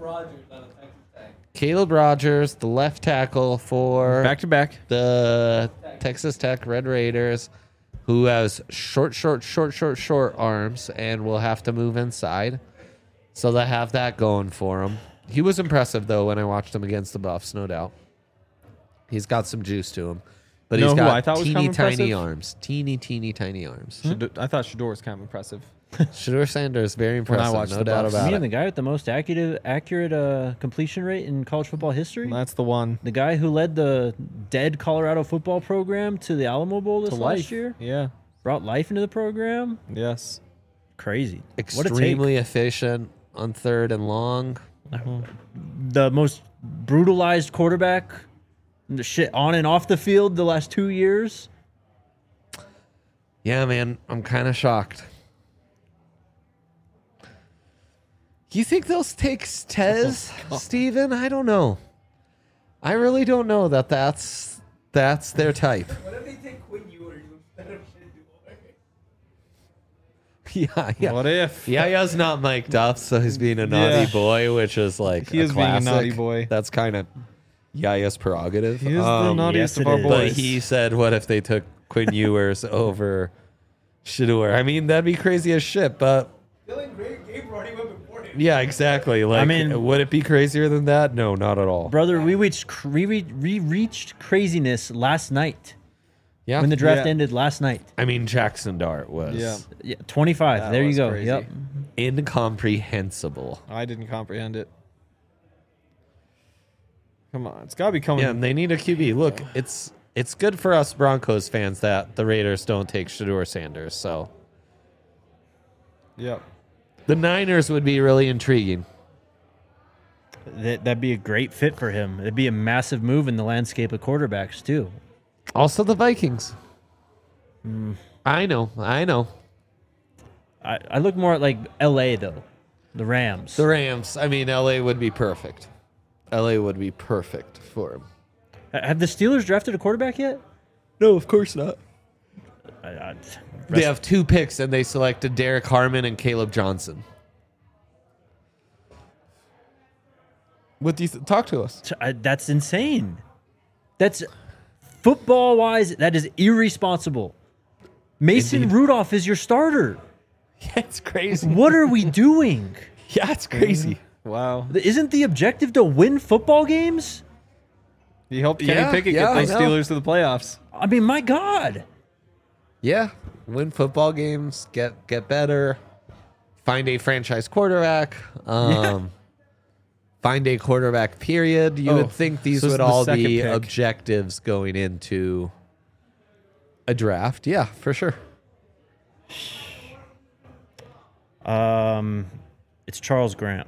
Caleb Rogers, the left tackle for Back to back. the Texas Tech Red Raiders, who has short arms and will have to move inside. So they have that going for him. He was impressive, though, when I watched him against the Buffs, no doubt. He's got some juice to him. But You know he's who got I thought was teeny kind of tiny impressive? arms. Teeny tiny arms. I thought Shador was kind of impressive. Shador Sanders, very impressive, watched no the doubt Buffs. about Man, the it. guy with the most accurate completion rate in college football history. That's the one. The guy who led the dead Colorado football program to the Alamo Bowl this To last life. year. Yeah. Brought life into the program. Yes. Crazy. What a take. Extremely efficient on third and long. The most brutalized quarterback, the shit on and off the field the last 2 years. Yeah, man, I'm kind of shocked. You think they'll take Tez, Steven? I don't know. I really don't know that's their type. What if they take Quinn Ewers instead of Shador? Yeah. What if? Yaya's not mic'd up, so he's being a naughty Yeah. boy, which is like He a is being a classic. naughty boy. That's kind of Yaya's prerogative. He is the naughtiest yes, of our it is. But boys. he said, what if they took Quinn Ewers over Shador? I mean, that'd be crazy as shit, but Dylan Gabriel already went before him. yeah, exactly. Like, mean- would it be crazier than that? No, not at all. Brother, we reached craziness last night Yeah. when the draft Yeah. ended last night. I mean, Jackson Dart was Yeah. Yeah, 25. That there you was go. crazy. Yep. incomprehensible. I didn't comprehend it. Come on. It's got to be coming. Yeah, and they need a QB. Look, it's good for us Broncos fans that the Raiders don't take Shador Sanders. So Yep. the Niners would be really intriguing. That'd be a great fit for him. It'd be a massive move in the landscape of quarterbacks, too. Also, the Vikings. I know. I look more at like L.A. though, the Rams. The Rams. I mean, LA would be perfect. LA would be perfect for him. Have the Steelers drafted a quarterback yet? No, of course not. I- They have 2 picks, and they selected Derek Harmon and Caleb Johnson. What do you talk to us? That's insane. That's football wise. That is irresponsible. Mason Indeed. Rudolph is your starter. Yeah, it's crazy. What are we doing? Yeah, it's crazy. Wow. Isn't the objective to win football games? He helped Kenny Yeah, Pickett yeah, get those I know. Steelers to the playoffs. I mean, my God. Yeah, win football games, get better, find a franchise quarterback, find a quarterback. Period. You would think these so this would is the all second be pick. objectives going into a draft. Yeah, for sure. It's Charles Grant.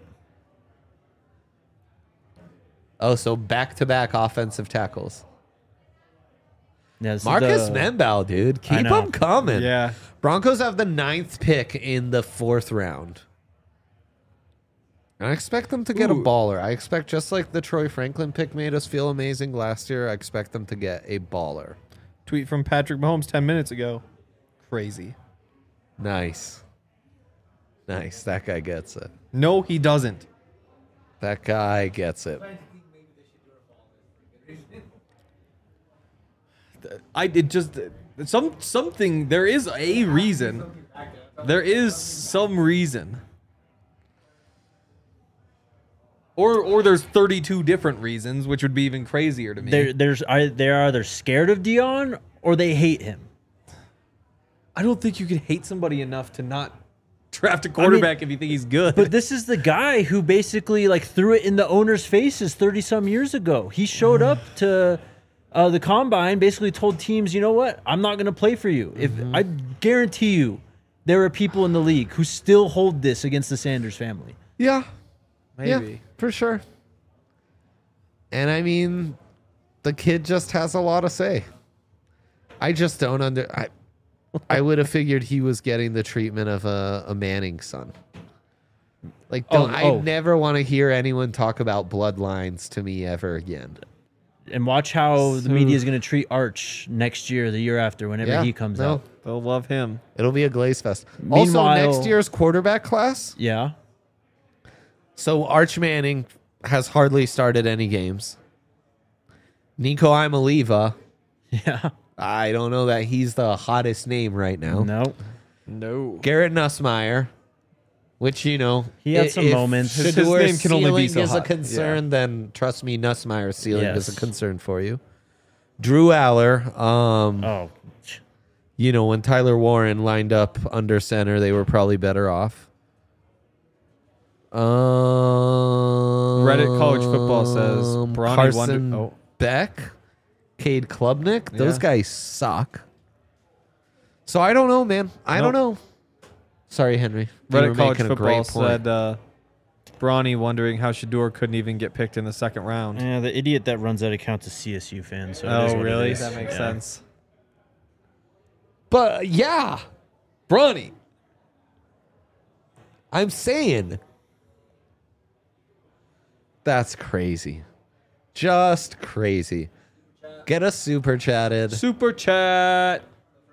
Oh, so back-to-back offensive tackles. Yeah, this is Marcus the- Menbal, dude. I Keep know. them coming. Yeah. Broncos have the 9th pick in the 4th round. And I expect them to get a Ooh. baller. I expect, just like the Troy Franklin pick made us feel amazing last year, I expect them to get a baller. Tweet from Patrick Mahomes 10 minutes ago. Crazy. Nice. Nice. That guy gets it. No, he doesn't. That guy gets it. I did just something. There is a reason. There is some reason. Or there's 32 different reasons, which would be even crazier to me. They're either scared of Dion or they hate him. I don't think you can hate somebody enough to not draft a quarterback if you think he's good. But this is the guy who basically like threw it in the owner's faces 30-some years ago. He showed up to the combine, basically told teams, you know what? I'm not going to play for you. If I guarantee you, there are people in the league who still hold this against the Sanders family. Yeah. Maybe. Yeah, for sure. And I mean, the kid just has a lot to say. I just don't I would have figured he was getting the treatment of a Manning son. Like, I never want to hear anyone talk about bloodlines to me ever again. And watch how the media is going to treat Arch next year, the year after, whenever he comes out. They'll love him. It'll be a glaze fest. Also, Meanwhile- next year's quarterback class. Yeah. So Arch Manning has hardly started any games. Nico Imaliva, Yeah. I don't know that he's the hottest name right now. No. No. Garrett Nussmeier, which, you know, He had some moments. His Shador's name can only be ceiling so is a hot. concern, then trust me, Nussmeier's ceiling is a Yes. concern for you. Drew Aller, Oh. you know, when Tyler Warren lined up under center, they were probably better off. Reddit College Football says Bronny Carson Wonder. Oh, Beck, Cade Klubnik, those Yeah. guys suck. So I don't know, man. I don't know. Sorry, Henry. You were Reddit College making a Football great point. said Bronny wondering how Shador couldn't even get picked in the second round. Yeah, the idiot that runs that account's a CSU fan. So it is Oh, what it really? is. That makes Yeah. sense. But yeah, Bronny. I'm saying that's crazy. Just crazy. Get us super chatted. Super chat.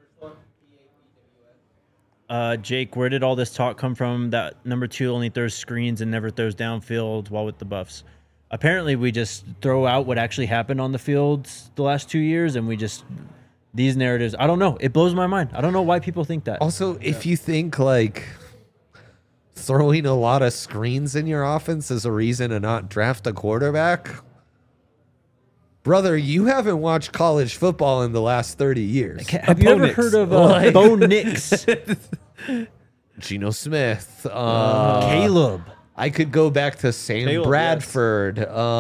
Jake, where did all this talk come from? That number 2 only throws screens and never throws downfield while with the Buffs. Apparently, we just throw out what actually happened on the field the last 2 years, and we just these narratives. I don't know. It blows my mind. I don't know why people think that. Also, if you think like throwing a lot of screens in your offense is a reason to not draft a quarterback, brother, you haven't watched college football in the last 30 years. Have you ever Opponents. heard of Like- Bo Nix? Geno Smith, Caleb. I could go back to Sam Caleb, Bradford.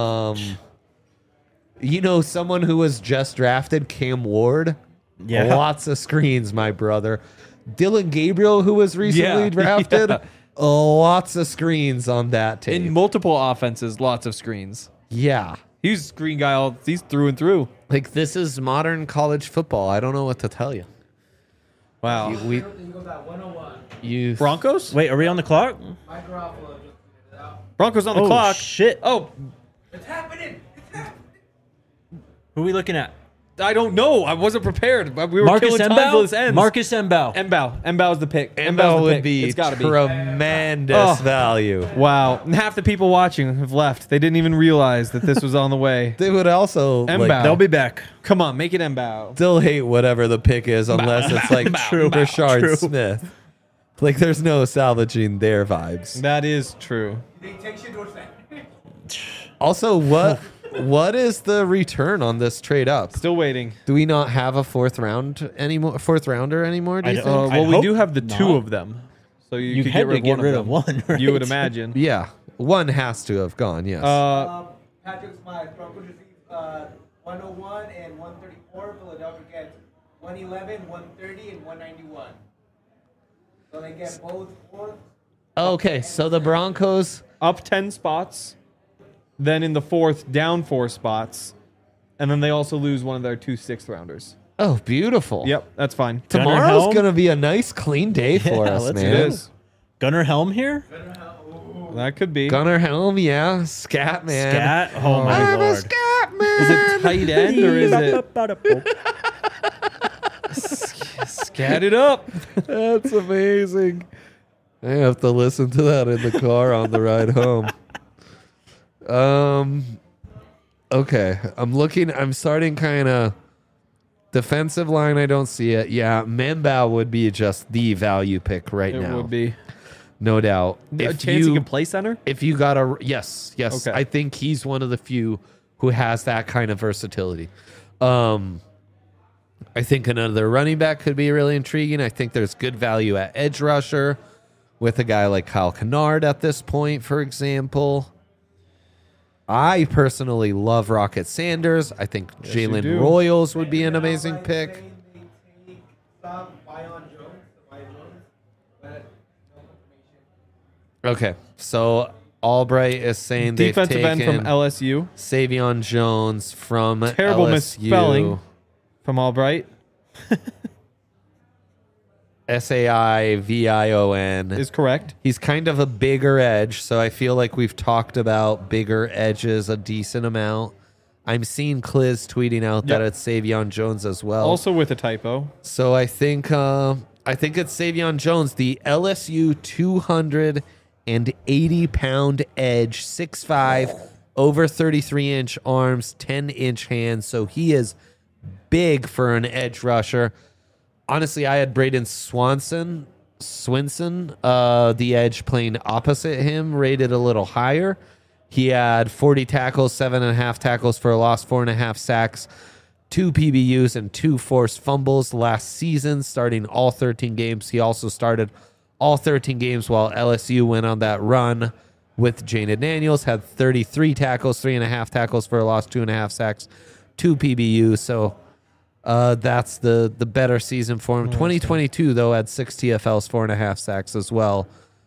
You know, someone who was just drafted, Cam Ward. Yeah. Lots of screens, my brother. Dylan Gabriel, who was recently Yeah, drafted. yeah. Lots of screens on that tape. In multiple offenses, lots of screens. Yeah. He's screen guy. He's through and through. Like, this is modern college football. I don't know what to tell you. Wow. We you Broncos? Wait, are we on the clock? Broncos on the Oh, clock. shit. Oh, Who are we looking at? I don't know. I wasn't prepared. We were Marcus killing time till this Mbow? ends. Marcus Mbow. Mbow's the pick. Mbow Mbow's the would pick. be It's got to be. tremendous Oh. value. Wow. And half the people watching have left. They didn't even realize that this was on the way. They would also Mbow. They'll be back. Come on, make it Mbow. still hate whatever the pick is unless it's like Rashard True. Smith. Like there's no salvaging their vibes. That is true. Also, what is the return on this trade up? Still waiting. Do we not have a fourth rounder anymore? Do you think? Well, we hope do have the not. two of them. So you could had to get rid of one. one, right? You would imagine. Yeah, one has to have gone. Yes. Patrick Smythe, Broncos receive 101 and 134. Philadelphia gets 111, 130, and 191. So they get both fourth. Okay, so the Broncos. Up 10 spots. Then in the fourth, down 4 spots. And then they also lose one of their 2 6th-rounders. Oh, beautiful. Yep, that's fine. Tomorrow's Helm? gonna be a nice, clean day for Yeah, us, let's man. It is. Gunnar Helm here? That could be. Gunnar Helm, yeah, scat man. Scat? Oh, my I'm a lord. scat man. Is it tight end or is it scat it up? That's amazing. I have to listen to that in the car on the ride home. Okay, I'm starting kind of defensive line. I don't see it. Yeah, Mbow would be just the value pick right It now. would be. No doubt. A chance he can play center? If you got a yes. Okay. I think he's one of the few who has that kind of versatility. I think another running back could be really intriguing. I think there's good value at edge rusher with a guy like Kyle Kennard at this point, for example. I personally love Rocket Sanders. I think you Jalen do. Royals would be an amazing pick. They take some Bion Jones, but no confirmation. Okay, so Albright is saying they've Defensive end taken from LSU. Savion Jones from Terrible LSU. misspelling from Albright. Saivion Is correct. He's kind of a bigger edge, so I feel like we've talked about bigger edges a decent amount. I'm seeing Kliz tweeting out that Yep. it's Savion Jones as well. Also with a typo. So I think it's Savion Jones, the LSU 280-pound edge, 6'5", over 33-inch arms, 10-inch hands. So he is big for an edge rusher. Honestly, I had Braden Swinson, the edge playing opposite him, rated a little higher. He had 40 tackles, 7.5 tackles for a loss, 4.5 sacks, 2 PBUs, and 2 forced fumbles last season, starting all 13 games. He also started all 13 games while LSU went on that run with Jaden Daniels, had 33 tackles, 3.5 tackles for a loss, 2.5 sacks, 2 PBUs. So that's the better season for him. 2022, though, had 6 TFLs, 4.5 sacks as well.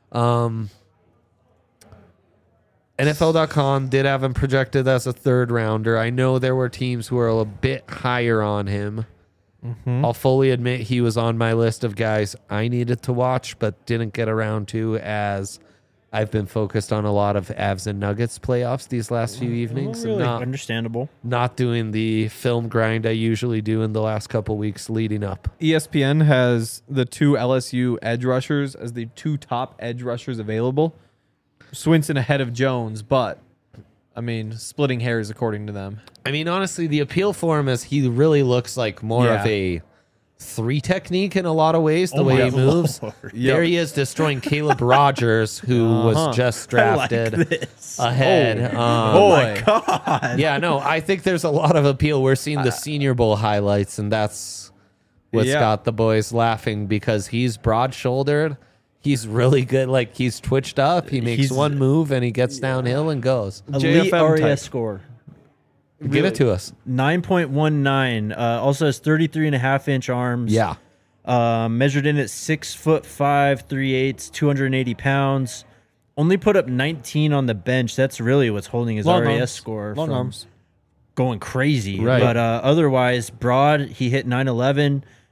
NFL.com did have him projected as a third rounder. I know there were teams who were a bit higher on him. I'll fully admit he was on my list of guys I needed to watch, but didn't get around to, as I've been focused on a lot of Avs and Nuggets playoffs these last few evenings, Really and understandable. not doing the film grind I usually do in the last couple weeks leading up. ESPN has the 2 LSU edge rushers as the 2 top edge rushers available. Swinson ahead of Jones, but I mean, splitting hairs according to them. I mean, honestly, the appeal for him is he really looks like more of Yeah. a 3 technique in a lot of ways, the Oh way my he moves. Lord. There he is destroying Caleb Rogers, who was just I like drafted this. ahead. Oh my God. Yeah, no, I think there's a lot of appeal. We're seeing the Senior Bowl highlights, and that's what's Yeah. got the boys laughing, because he's broad-shouldered. He's really good. Like, he's twitched up. He makes He's- one move, and he gets downhill and goes. Elite JFM RAS type. score. Give it to us. 9.19. Also has 33.5-inch arms. Yeah. Measured in at 6'5", 3/8", 280 pounds. Only put up 19 on the bench. That's really what's holding his Long RAS arms. score Long from arms. going crazy. Right. But otherwise, broad, he hit 9'11",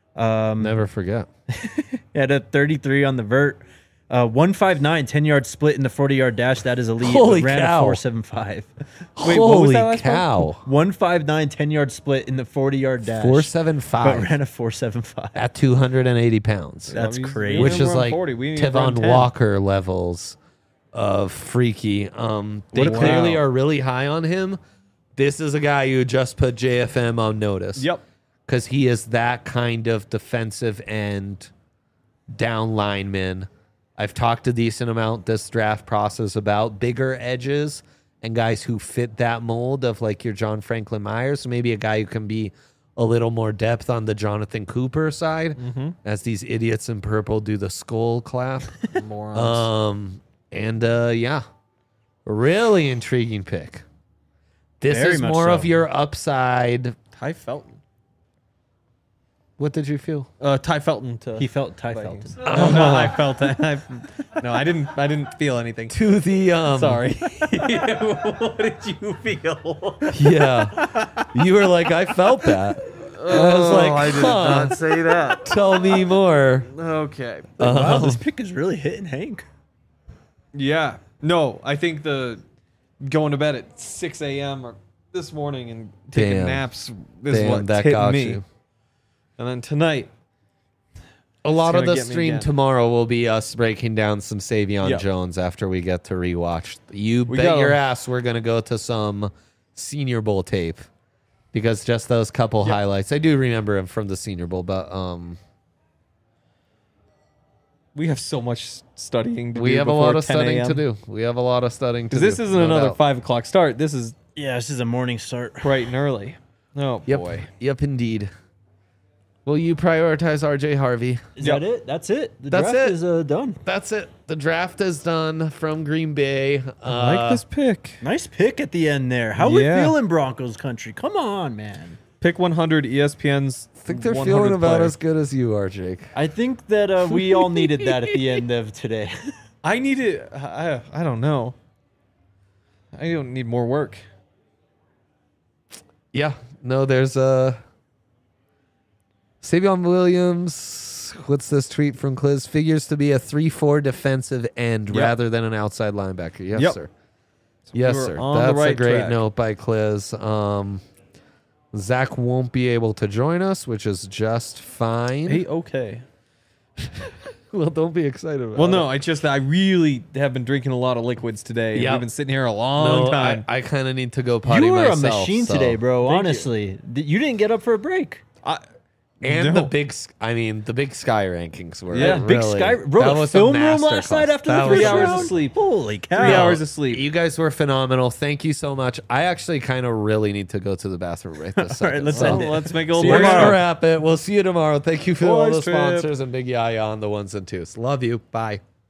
Never forget. At a 33 on the vert. 159, 10-yard split in the 40-yard dash. That is elite. Holy Ran cow. a 4.75. Wait, what was Holy that last cow. 159, 10-yard split in the 40-yard dash. 475. But ran a 4.75. At 280 pounds. That's we- crazy. we Which didn't is run like 40, we didn't run Tevon 10. Walker levels of freaky. They Wow. clearly are really high on him. This is a guy who just put JFM on notice. Yep. Because he is that kind of defensive end down lineman. I've talked a decent amount this draft process about bigger edges and guys who fit that mold of like your John Franklin Myers. So maybe a guy who can be a little more depth on the Jonathan Cooper side as these idiots in purple do the skull clap. Morons. Yeah, really intriguing pick. This Very is much more so. of your upside. Ty Felton. What did you feel? Ty Felton to He felt Ty Vikings. Felton. Oh, no, I felt that. No, I didn't feel anything. To the Sorry. What did you feel? Yeah, you were like, I felt that. I was like, I did huh, not say that. tell me more. Okay. Wow, this pick is really hitting Hank. Yeah. No, I think the going to bed at 6 a.m. or this morning and taking Damn. naps is Damn, what that hit got me. you. And then tonight, A lot of gonna the get me stream again. tomorrow will be us breaking down some Savion Yeah. Jones after we get to rewatch. You We bet go. your ass we're going to go to some Senior Bowl tape because just those couple highlights. I do remember him from the Senior Bowl, but we have so much studying to we do have a before lot of 10 studying a.m. to do. We have a lot of studying to do. Because this isn't no another doubt. 5 o'clock start. This is Yeah, this is a morning start. bright and early. Oh, Yep. boy. Yep, indeed. Will you prioritize RJ Harvey? Is Yep. that it? That's it. The That's draft it. is done. That's it. The draft is done from Green Bay. I like this pick. Nice pick at the end there. How we Yeah. feeling, Broncos country? Come on, man. Pick 100 ESPN's. I think they're 100th feeling about player. as good as you are, Jake. I think that we all needed that at the end of today. I need it. I don't know. I don't need more work. Yeah. No, there's Savion Williams. What's this tweet from Cliz? Figures to be a 3-4 defensive end Yep. rather than an outside linebacker. Yes, Yep. sir. So Yes, we were sir. on the That's a right great track. note by Cliz. Zach won't be able to join us, which is just fine. Hey, okay. Well, don't be excited about Well, it. no, I really have been drinking a lot of liquids today. Yep. We've been sitting here a long No, time. I kind of need to go potty You were myself. a machine so- today, bro. Thank you. Honestly, you didn't get up for a break. And No. the big Sky rankings were Yeah, Big really, Sky, bro. that The was a film room last masterclass. night after That the was 3 first hours round? of sleep. Holy cow! 3 hours of sleep. You guys were phenomenal. Thank you so much. I actually kind of really need to go to the bathroom right this second. right, let's so end it. Let's make a little See you we're more tomorrow. gonna wrap it. We'll see you tomorrow. Thank you for all Boys the trip. sponsors and Big Yaya on the ones and twos. Love you. Bye.